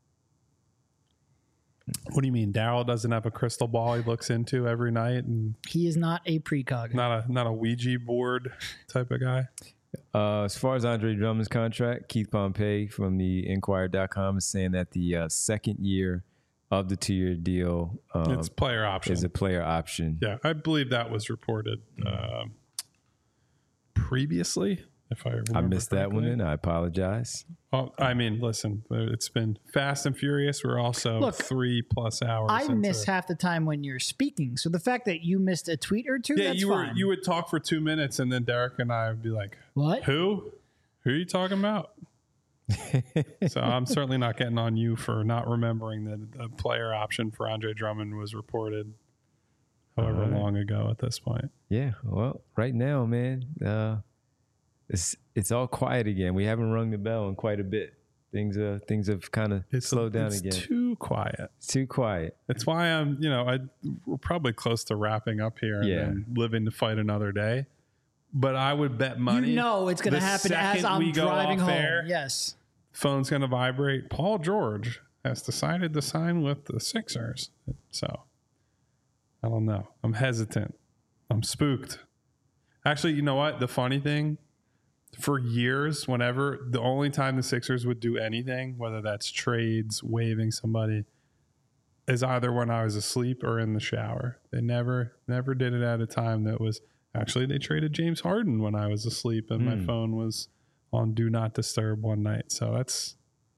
Speaker 2: What do you mean? Daryl doesn't have a crystal ball he looks into every night, and
Speaker 3: He is not a precog.
Speaker 2: not a not a Ouija board type of guy.
Speaker 1: Uh, as far as Andre Drummond's contract, Keith Pompey from the Inquirer dot com is saying that the uh, second year of the two-year deal um,
Speaker 2: It's player option.
Speaker 1: is a player option.
Speaker 2: Yeah, I believe that was reported uh, previously. If I remember
Speaker 1: I missed that one,
Speaker 2: correctly.
Speaker 1: and I apologize.
Speaker 2: Well, I mean, listen, it's been fast and furious. We're also
Speaker 3: Look,
Speaker 2: three plus hours.
Speaker 3: I
Speaker 2: into
Speaker 3: miss
Speaker 2: it.
Speaker 3: half the time when you're speaking. So the fact that you missed a tweet or two,
Speaker 2: Yeah,
Speaker 3: that's
Speaker 2: you were
Speaker 3: fine.
Speaker 2: you would talk for two minutes, and then Derek and I would be like,
Speaker 3: What?
Speaker 2: "Who? Who are you talking about?" So I'm certainly not getting on you for not remembering that a player option for Andre Drummond was reported however
Speaker 1: All right.
Speaker 2: long ago at this point.
Speaker 1: Yeah, well, right now, man, uh, it's it's all quiet again. We haven't rung the bell in quite a bit. Things uh things have kind of
Speaker 2: It's
Speaker 1: slowed down
Speaker 2: it's
Speaker 1: again.
Speaker 2: too quiet.
Speaker 1: It's too quiet.
Speaker 2: That's why I'm, you know, I we're probably close to wrapping up here and
Speaker 1: Yeah.
Speaker 2: then living to fight another day. But I would bet money.
Speaker 3: You know it's going to
Speaker 2: the
Speaker 3: happen as
Speaker 2: second we
Speaker 3: I'm
Speaker 2: go
Speaker 3: driving
Speaker 2: off
Speaker 3: home.
Speaker 2: air,
Speaker 3: Yes.
Speaker 2: phone's going to vibrate. Paul George has decided to sign with the Sixers. So I don't know. I'm hesitant. I'm spooked. Actually, you know what? The funny thing for years, whenever the only time the Sixers would do anything, whether that's trades, waiving somebody, is either when I was asleep or in the shower. They never, never did it at a time that was actually, they traded James Harden when I was asleep and mm. my phone was on do not disturb one night. So that's,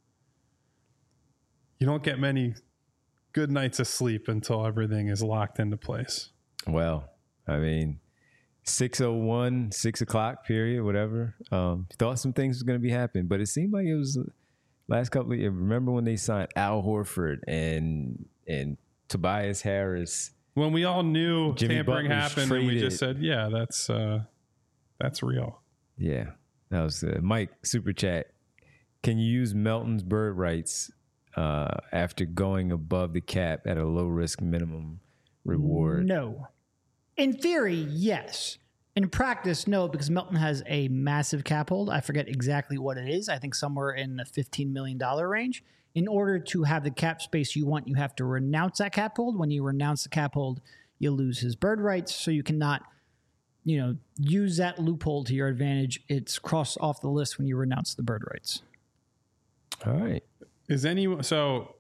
Speaker 2: you don't get many good nights of sleep until everything is locked into place.
Speaker 1: Well, I mean, six oh one, six o'clock period, whatever. Um, thought some things was going to be happening, but it seemed like it was last couple of years. Remember when they signed Al Horford and and Tobias Harris?
Speaker 2: When we all knew
Speaker 1: Jimmy
Speaker 2: tampering
Speaker 1: Butler's
Speaker 2: happened,
Speaker 1: traded.
Speaker 2: and we just said, "Yeah, that's uh, that's real."
Speaker 1: Yeah, that was uh, Mike Super Chat. Can you use Melton's bird rights uh, after going above the cap at a low risk minimum reward?
Speaker 3: No. In theory, yes. In practice, no, because Melton has a massive cap hold. I forget exactly what it is. I think somewhere in the fifteen million dollars range. In order to have the cap space you want, you have to renounce that cap hold. When you renounce the cap hold, you lose his bird rights, so you cannot, you know, use that loophole to your advantage. It's crossed off the list when you renounce the bird rights.
Speaker 1: All right.
Speaker 2: Is any so?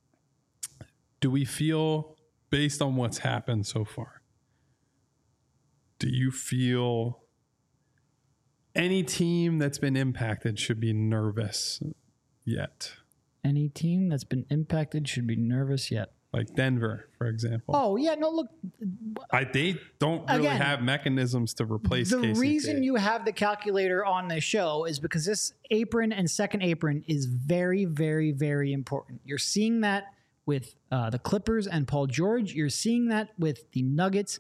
Speaker 2: Do we feel, based on what's happened so far, do you feel any team that's been impacted should be nervous yet?
Speaker 3: Any team that's been impacted should be nervous yet.
Speaker 2: Like Denver, for example.
Speaker 3: Oh, yeah. No, look.
Speaker 2: I, they don't really
Speaker 3: Again,
Speaker 2: have mechanisms to replace
Speaker 3: The
Speaker 2: K C P.
Speaker 3: reason you have the calculator on this show is because this apron and second apron is very, very, very important. You're seeing that with uh, the Clippers and Paul George. You're seeing that with the Nuggets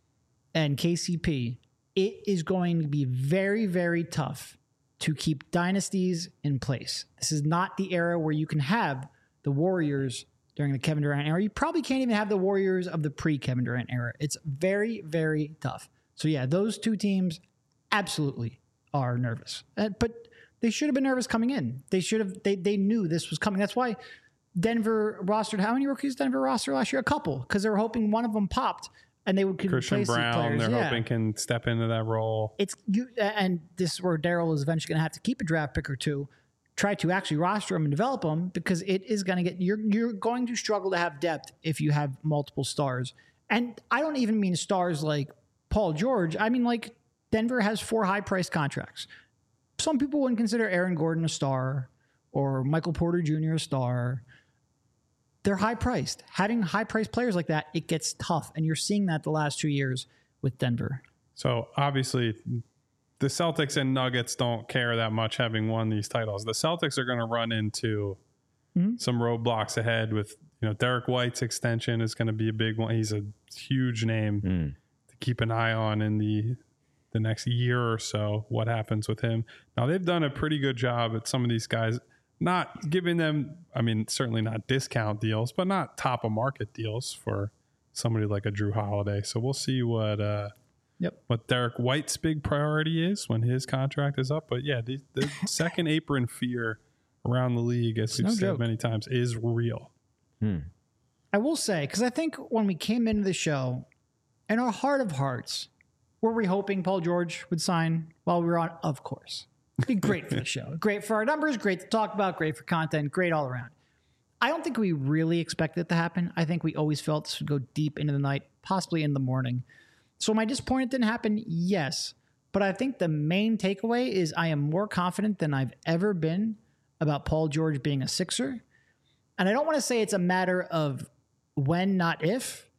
Speaker 3: and K C P. It is going to be very, very tough to keep dynasties in place. This is not the era where you can have the Warriors during the Kevin Durant era. You probably can't even have the Warriors of the pre-Kevin Durant era. It's very, very tough. So yeah, those two teams absolutely are nervous. Uh, but they should have been nervous coming in. They should have, they they knew this was coming. That's why Denver rostered, how many rookies Denver rostered last year? A couple, because they were hoping one of them popped and they would could
Speaker 2: Christian
Speaker 3: replace
Speaker 2: Brown,
Speaker 3: the players.
Speaker 2: they're
Speaker 3: Yeah.
Speaker 2: hoping can step into that role.
Speaker 3: It's you, and this is where Daryl is eventually going to have to keep a draft pick or two, try to actually roster them and develop them, because it is going to get, you're you're going to struggle to have depth if you have multiple stars. And I don't even mean stars like Paul George. I mean, like, Denver has four high priced contracts. Some people wouldn't consider Aaron Gordon a star or Michael Porter Junior a star. They're high priced. Having high priced players like that, it gets tough. And you're seeing that the last two years with Denver.
Speaker 2: So obviously the Celtics and Nuggets don't care that much having won these titles. The Celtics are going to run into mm-hmm. some roadblocks ahead with, you know, Derek White's extension is going to be a big one. He's a huge name mm. to keep an eye on in the the next year or so, what happens with him. Now, they've done a pretty good job at some of these guys, not giving them, I mean, certainly not discount deals, but not top of market deals for somebody like a Drew Holiday. So we'll see what uh, yep. what Derek White's big priority is when his contract is up. But yeah, the, the second apron fear around the league, as we've no said joke. many times, is real.
Speaker 3: Hmm. I will say, because I think when we came into the show, in our heart of hearts, were we hoping Paul George would sign while we were on? Of course. It'd be great for the show. Great for our numbers, great to talk about, great for content, great all around. I don't think we really expected it to happen. I think we always felt this would go deep into the night, possibly in the morning. So am I disappointed it didn't happen? Yes. But I think the main takeaway is I am more confident than I've ever been about Paul George being a Sixer. And I don't want to say it's a matter of when, not if,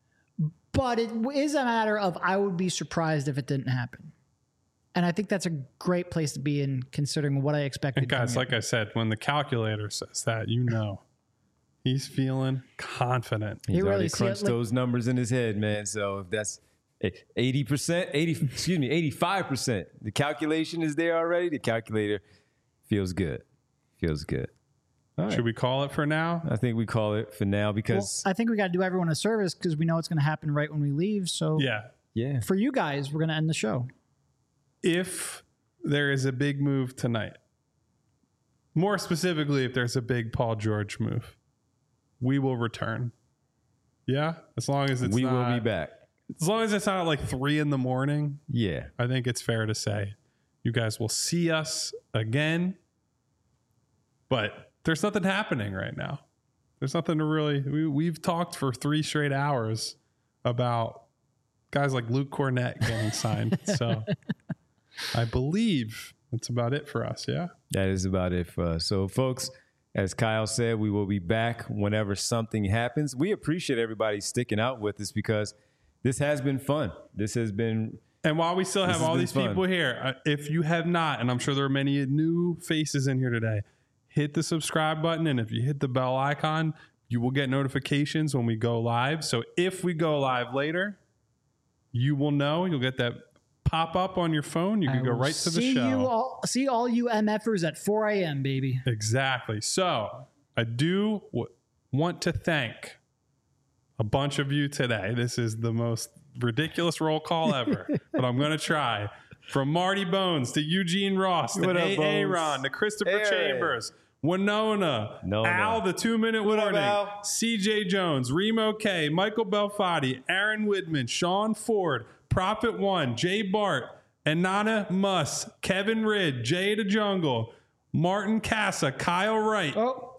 Speaker 3: but it is a matter of I would be surprised if it didn't happen. And I think that's a great place to be in, considering what I expected.
Speaker 2: And guys, like I said, when the calculator says that, you know, he's feeling confident.
Speaker 1: He's
Speaker 3: he really
Speaker 1: already crunched like, those numbers in his head, man. So if that's eighty percent, eighty, excuse me, eighty-five percent, the calculation is there already. The calculator feels good. Feels good.
Speaker 2: Right. Should we call it for now?
Speaker 1: I think we call it for now because
Speaker 3: well, I think we got to do everyone a service because we know it's going to happen right when we leave. So
Speaker 2: yeah,
Speaker 1: yeah.
Speaker 3: For you guys, we're going to end the show.
Speaker 2: If there is a big move tonight, more specifically, if there's a big Paul George move, we will return. Yeah, as long as it's
Speaker 1: we
Speaker 2: not,
Speaker 1: will be back.
Speaker 2: As long as it's not like three in the morning.
Speaker 1: Yeah,
Speaker 2: I think it's fair to say you guys will see us again. But there's nothing happening right now. There's nothing to really, we, we've talked for three straight hours about guys like Luke Cornett getting signed. So I believe that's about it for us. Yeah.
Speaker 1: That is about it for us. So folks, as Kyle said, we will be back whenever something happens. We appreciate everybody sticking out with us because this has been fun. This has been.
Speaker 2: And while we still have all these fun. people here, uh, if you have not, and I'm sure there are many new faces in here today, hit the subscribe button. And if you hit the bell icon, you will get notifications when we go live. So if we go live later, you will know. You'll get that pop up on your phone. You can I go right to the
Speaker 3: see
Speaker 2: show.
Speaker 3: You all, see all you MFers at four a.m., baby.
Speaker 2: Exactly. So I do w- want to thank a bunch of you today. This is the most ridiculous roll call ever, but I'm going to try. From Marty Bones to Eugene Ross to Aaron to Christopher Aaron. Chambers, Winona, no, Al, no. the two-minute warning, up, C J Jones, Remo K, Michael Belfatti, Aaron Widman, Sean Ford, Prophet One, Jay Bart, Anana Muss, Kevin Ridd, Jay the Jungle, Martin Casa, Kyle Wright.
Speaker 3: Oh.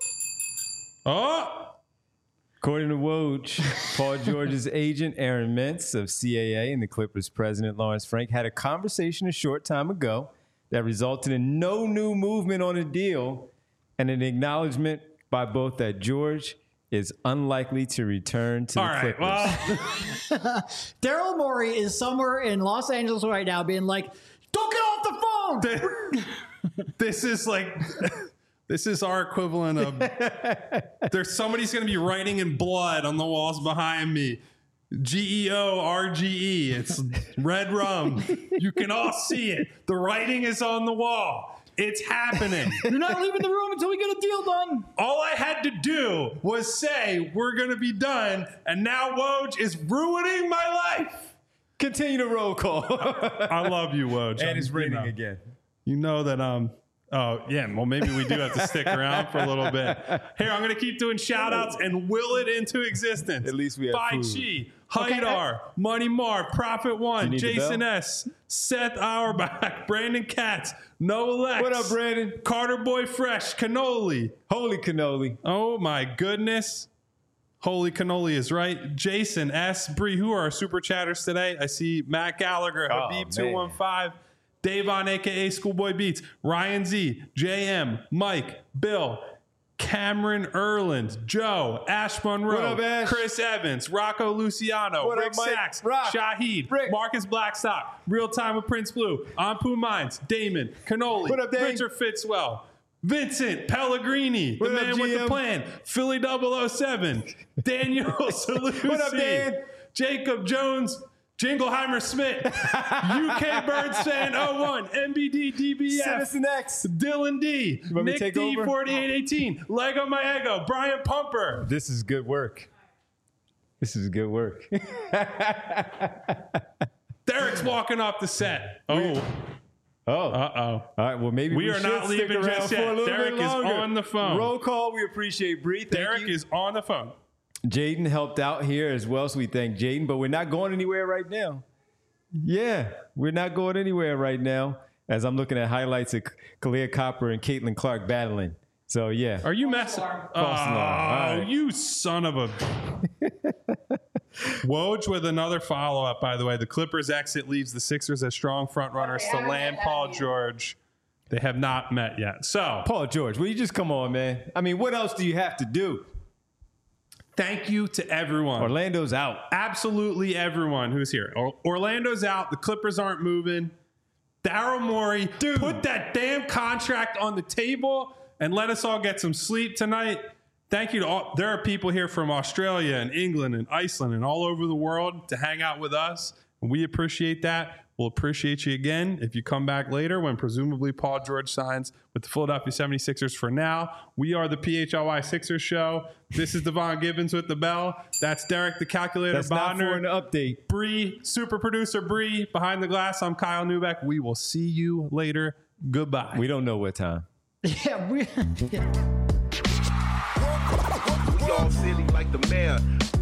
Speaker 2: Oh.
Speaker 1: According to Woj, Paul George's agent, Aaron Mintz of C A A, and the Clippers president, Lawrence Frank, had a conversation a short time ago that resulted in no new movement on a deal and an acknowledgement by both that George is unlikely to return to
Speaker 2: All
Speaker 1: the
Speaker 2: right,
Speaker 1: Clippers.
Speaker 3: Well. Daryl Morey is somewhere in Los Angeles right now being like, don't get off the phone!
Speaker 2: This is like... This is our equivalent of there's somebody's going to be writing in blood on the walls behind me. G E O R G E. It's red rum. You can all see it. The writing is on the wall. It's happening.
Speaker 3: You're not leaving the room until we get a deal done.
Speaker 2: All I had to do was say we're going to be done, and now Woj is ruining my life.
Speaker 1: Continue the roll call.
Speaker 2: I love you, Woj.
Speaker 1: And it's raining
Speaker 2: you know,
Speaker 1: again.
Speaker 2: You know that um. Oh, yeah. Well, maybe we do have to stick around for a little bit. Here, I'm going to keep doing shout-outs and will it into existence.
Speaker 1: At least we have
Speaker 2: Bai
Speaker 1: food.
Speaker 2: Chi, Haidar,
Speaker 3: okay.
Speaker 2: Money Mark, Prophet One, Jason S., Seth Auerbach, Brandon Katz, Noah Lex.
Speaker 1: What up, Brandon?
Speaker 2: Carter Boy Fresh, Cannoli.
Speaker 1: Holy cannoli.
Speaker 2: Oh, my goodness. Holy cannoli is right. Jason S., Bree, who are our super chatters today? I see Matt Gallagher,
Speaker 1: oh,
Speaker 2: Habib two one five. Davon, a k a. Schoolboy Beats, Ryan Z, J M, Mike, Bill, Cameron Erland, Joe, Ash Monroe,
Speaker 1: up, Ash?
Speaker 2: Chris Evans, Rocco Luciano,
Speaker 1: what
Speaker 2: Rick
Speaker 1: up, Mike?
Speaker 2: Sachs,
Speaker 1: Rock.
Speaker 2: Shahid,
Speaker 1: Rick.
Speaker 2: Marcus Blackstock, Real Time with Prince Blue, Ampu Mines, Damon, Cannoli,
Speaker 1: what up, Dave?
Speaker 2: Richard Fitzwell, Vincent Pellegrini,
Speaker 1: what
Speaker 2: the
Speaker 1: up,
Speaker 2: man
Speaker 1: G M?
Speaker 2: with the plan, Philly double oh seven, Daniel Salusi,
Speaker 1: what up, Dan?
Speaker 2: Jacob Jones, Jingleheimer Smith, U K Birds Fan oh one, M B D D B F,
Speaker 1: Citizen X,
Speaker 2: Dylan D, Nick D forty-eight eighteen, Lego My Ego, Brian Pumper.
Speaker 1: This is good work. This is good work.
Speaker 2: Derek's walking off the set. Oh.
Speaker 1: Oh.
Speaker 2: Uh-oh.
Speaker 1: All right, well, maybe
Speaker 2: we,
Speaker 1: we
Speaker 2: are
Speaker 1: should
Speaker 2: not
Speaker 1: stick
Speaker 2: leaving
Speaker 1: around
Speaker 2: just
Speaker 1: for a
Speaker 2: yet.
Speaker 1: little
Speaker 2: Derek
Speaker 1: bit
Speaker 2: is
Speaker 1: longer.
Speaker 2: on the phone.
Speaker 1: Roll call. We appreciate Bree. Thank
Speaker 2: Derek
Speaker 1: you.
Speaker 2: is on the phone.
Speaker 1: Jaden helped out here as well, so we thank Jaden, but we're not going anywhere right now. Yeah, we're not going anywhere right now as I'm looking at highlights of Kalia Copper and Caitlin Clark battling. So, yeah.
Speaker 2: Are you messing?
Speaker 1: False
Speaker 2: Oh,
Speaker 1: alarm. Right.
Speaker 2: you son of a... Woj with another follow-up, by the way. The Clippers exit leaves the Sixers as strong front runners to land Paul George. They have not met yet. So,
Speaker 1: Paul George, will you just come on, man? I mean, what else do you have to do?
Speaker 2: thank you to everyone.
Speaker 1: Orlando's out.
Speaker 2: Absolutely everyone who's here. Or- Orlando's out. The Clippers aren't moving. Daryl Morey,
Speaker 1: Dude.
Speaker 2: put that damn contract on the table and let us all get some sleep tonight. Thank you to all. There are people here from Australia and England and Iceland and all over the world to hang out with us. And we appreciate that. We'll appreciate you again if you come back later when presumably Paul George signs with the Philadelphia seventy-sixers. For now, we are the P H L Y Sixers show. This is Devon Gibbons with the bell. That's Derek the Calculator
Speaker 1: That's not for
Speaker 2: Bonner.
Speaker 1: an update.
Speaker 2: Bree, super producer Bree, behind the glass. I'm Kyle Neubeck. We will see you later. Goodbye.
Speaker 1: We don't know what time.
Speaker 3: Yeah, we. Yeah.
Speaker 4: We all silly like the mayor.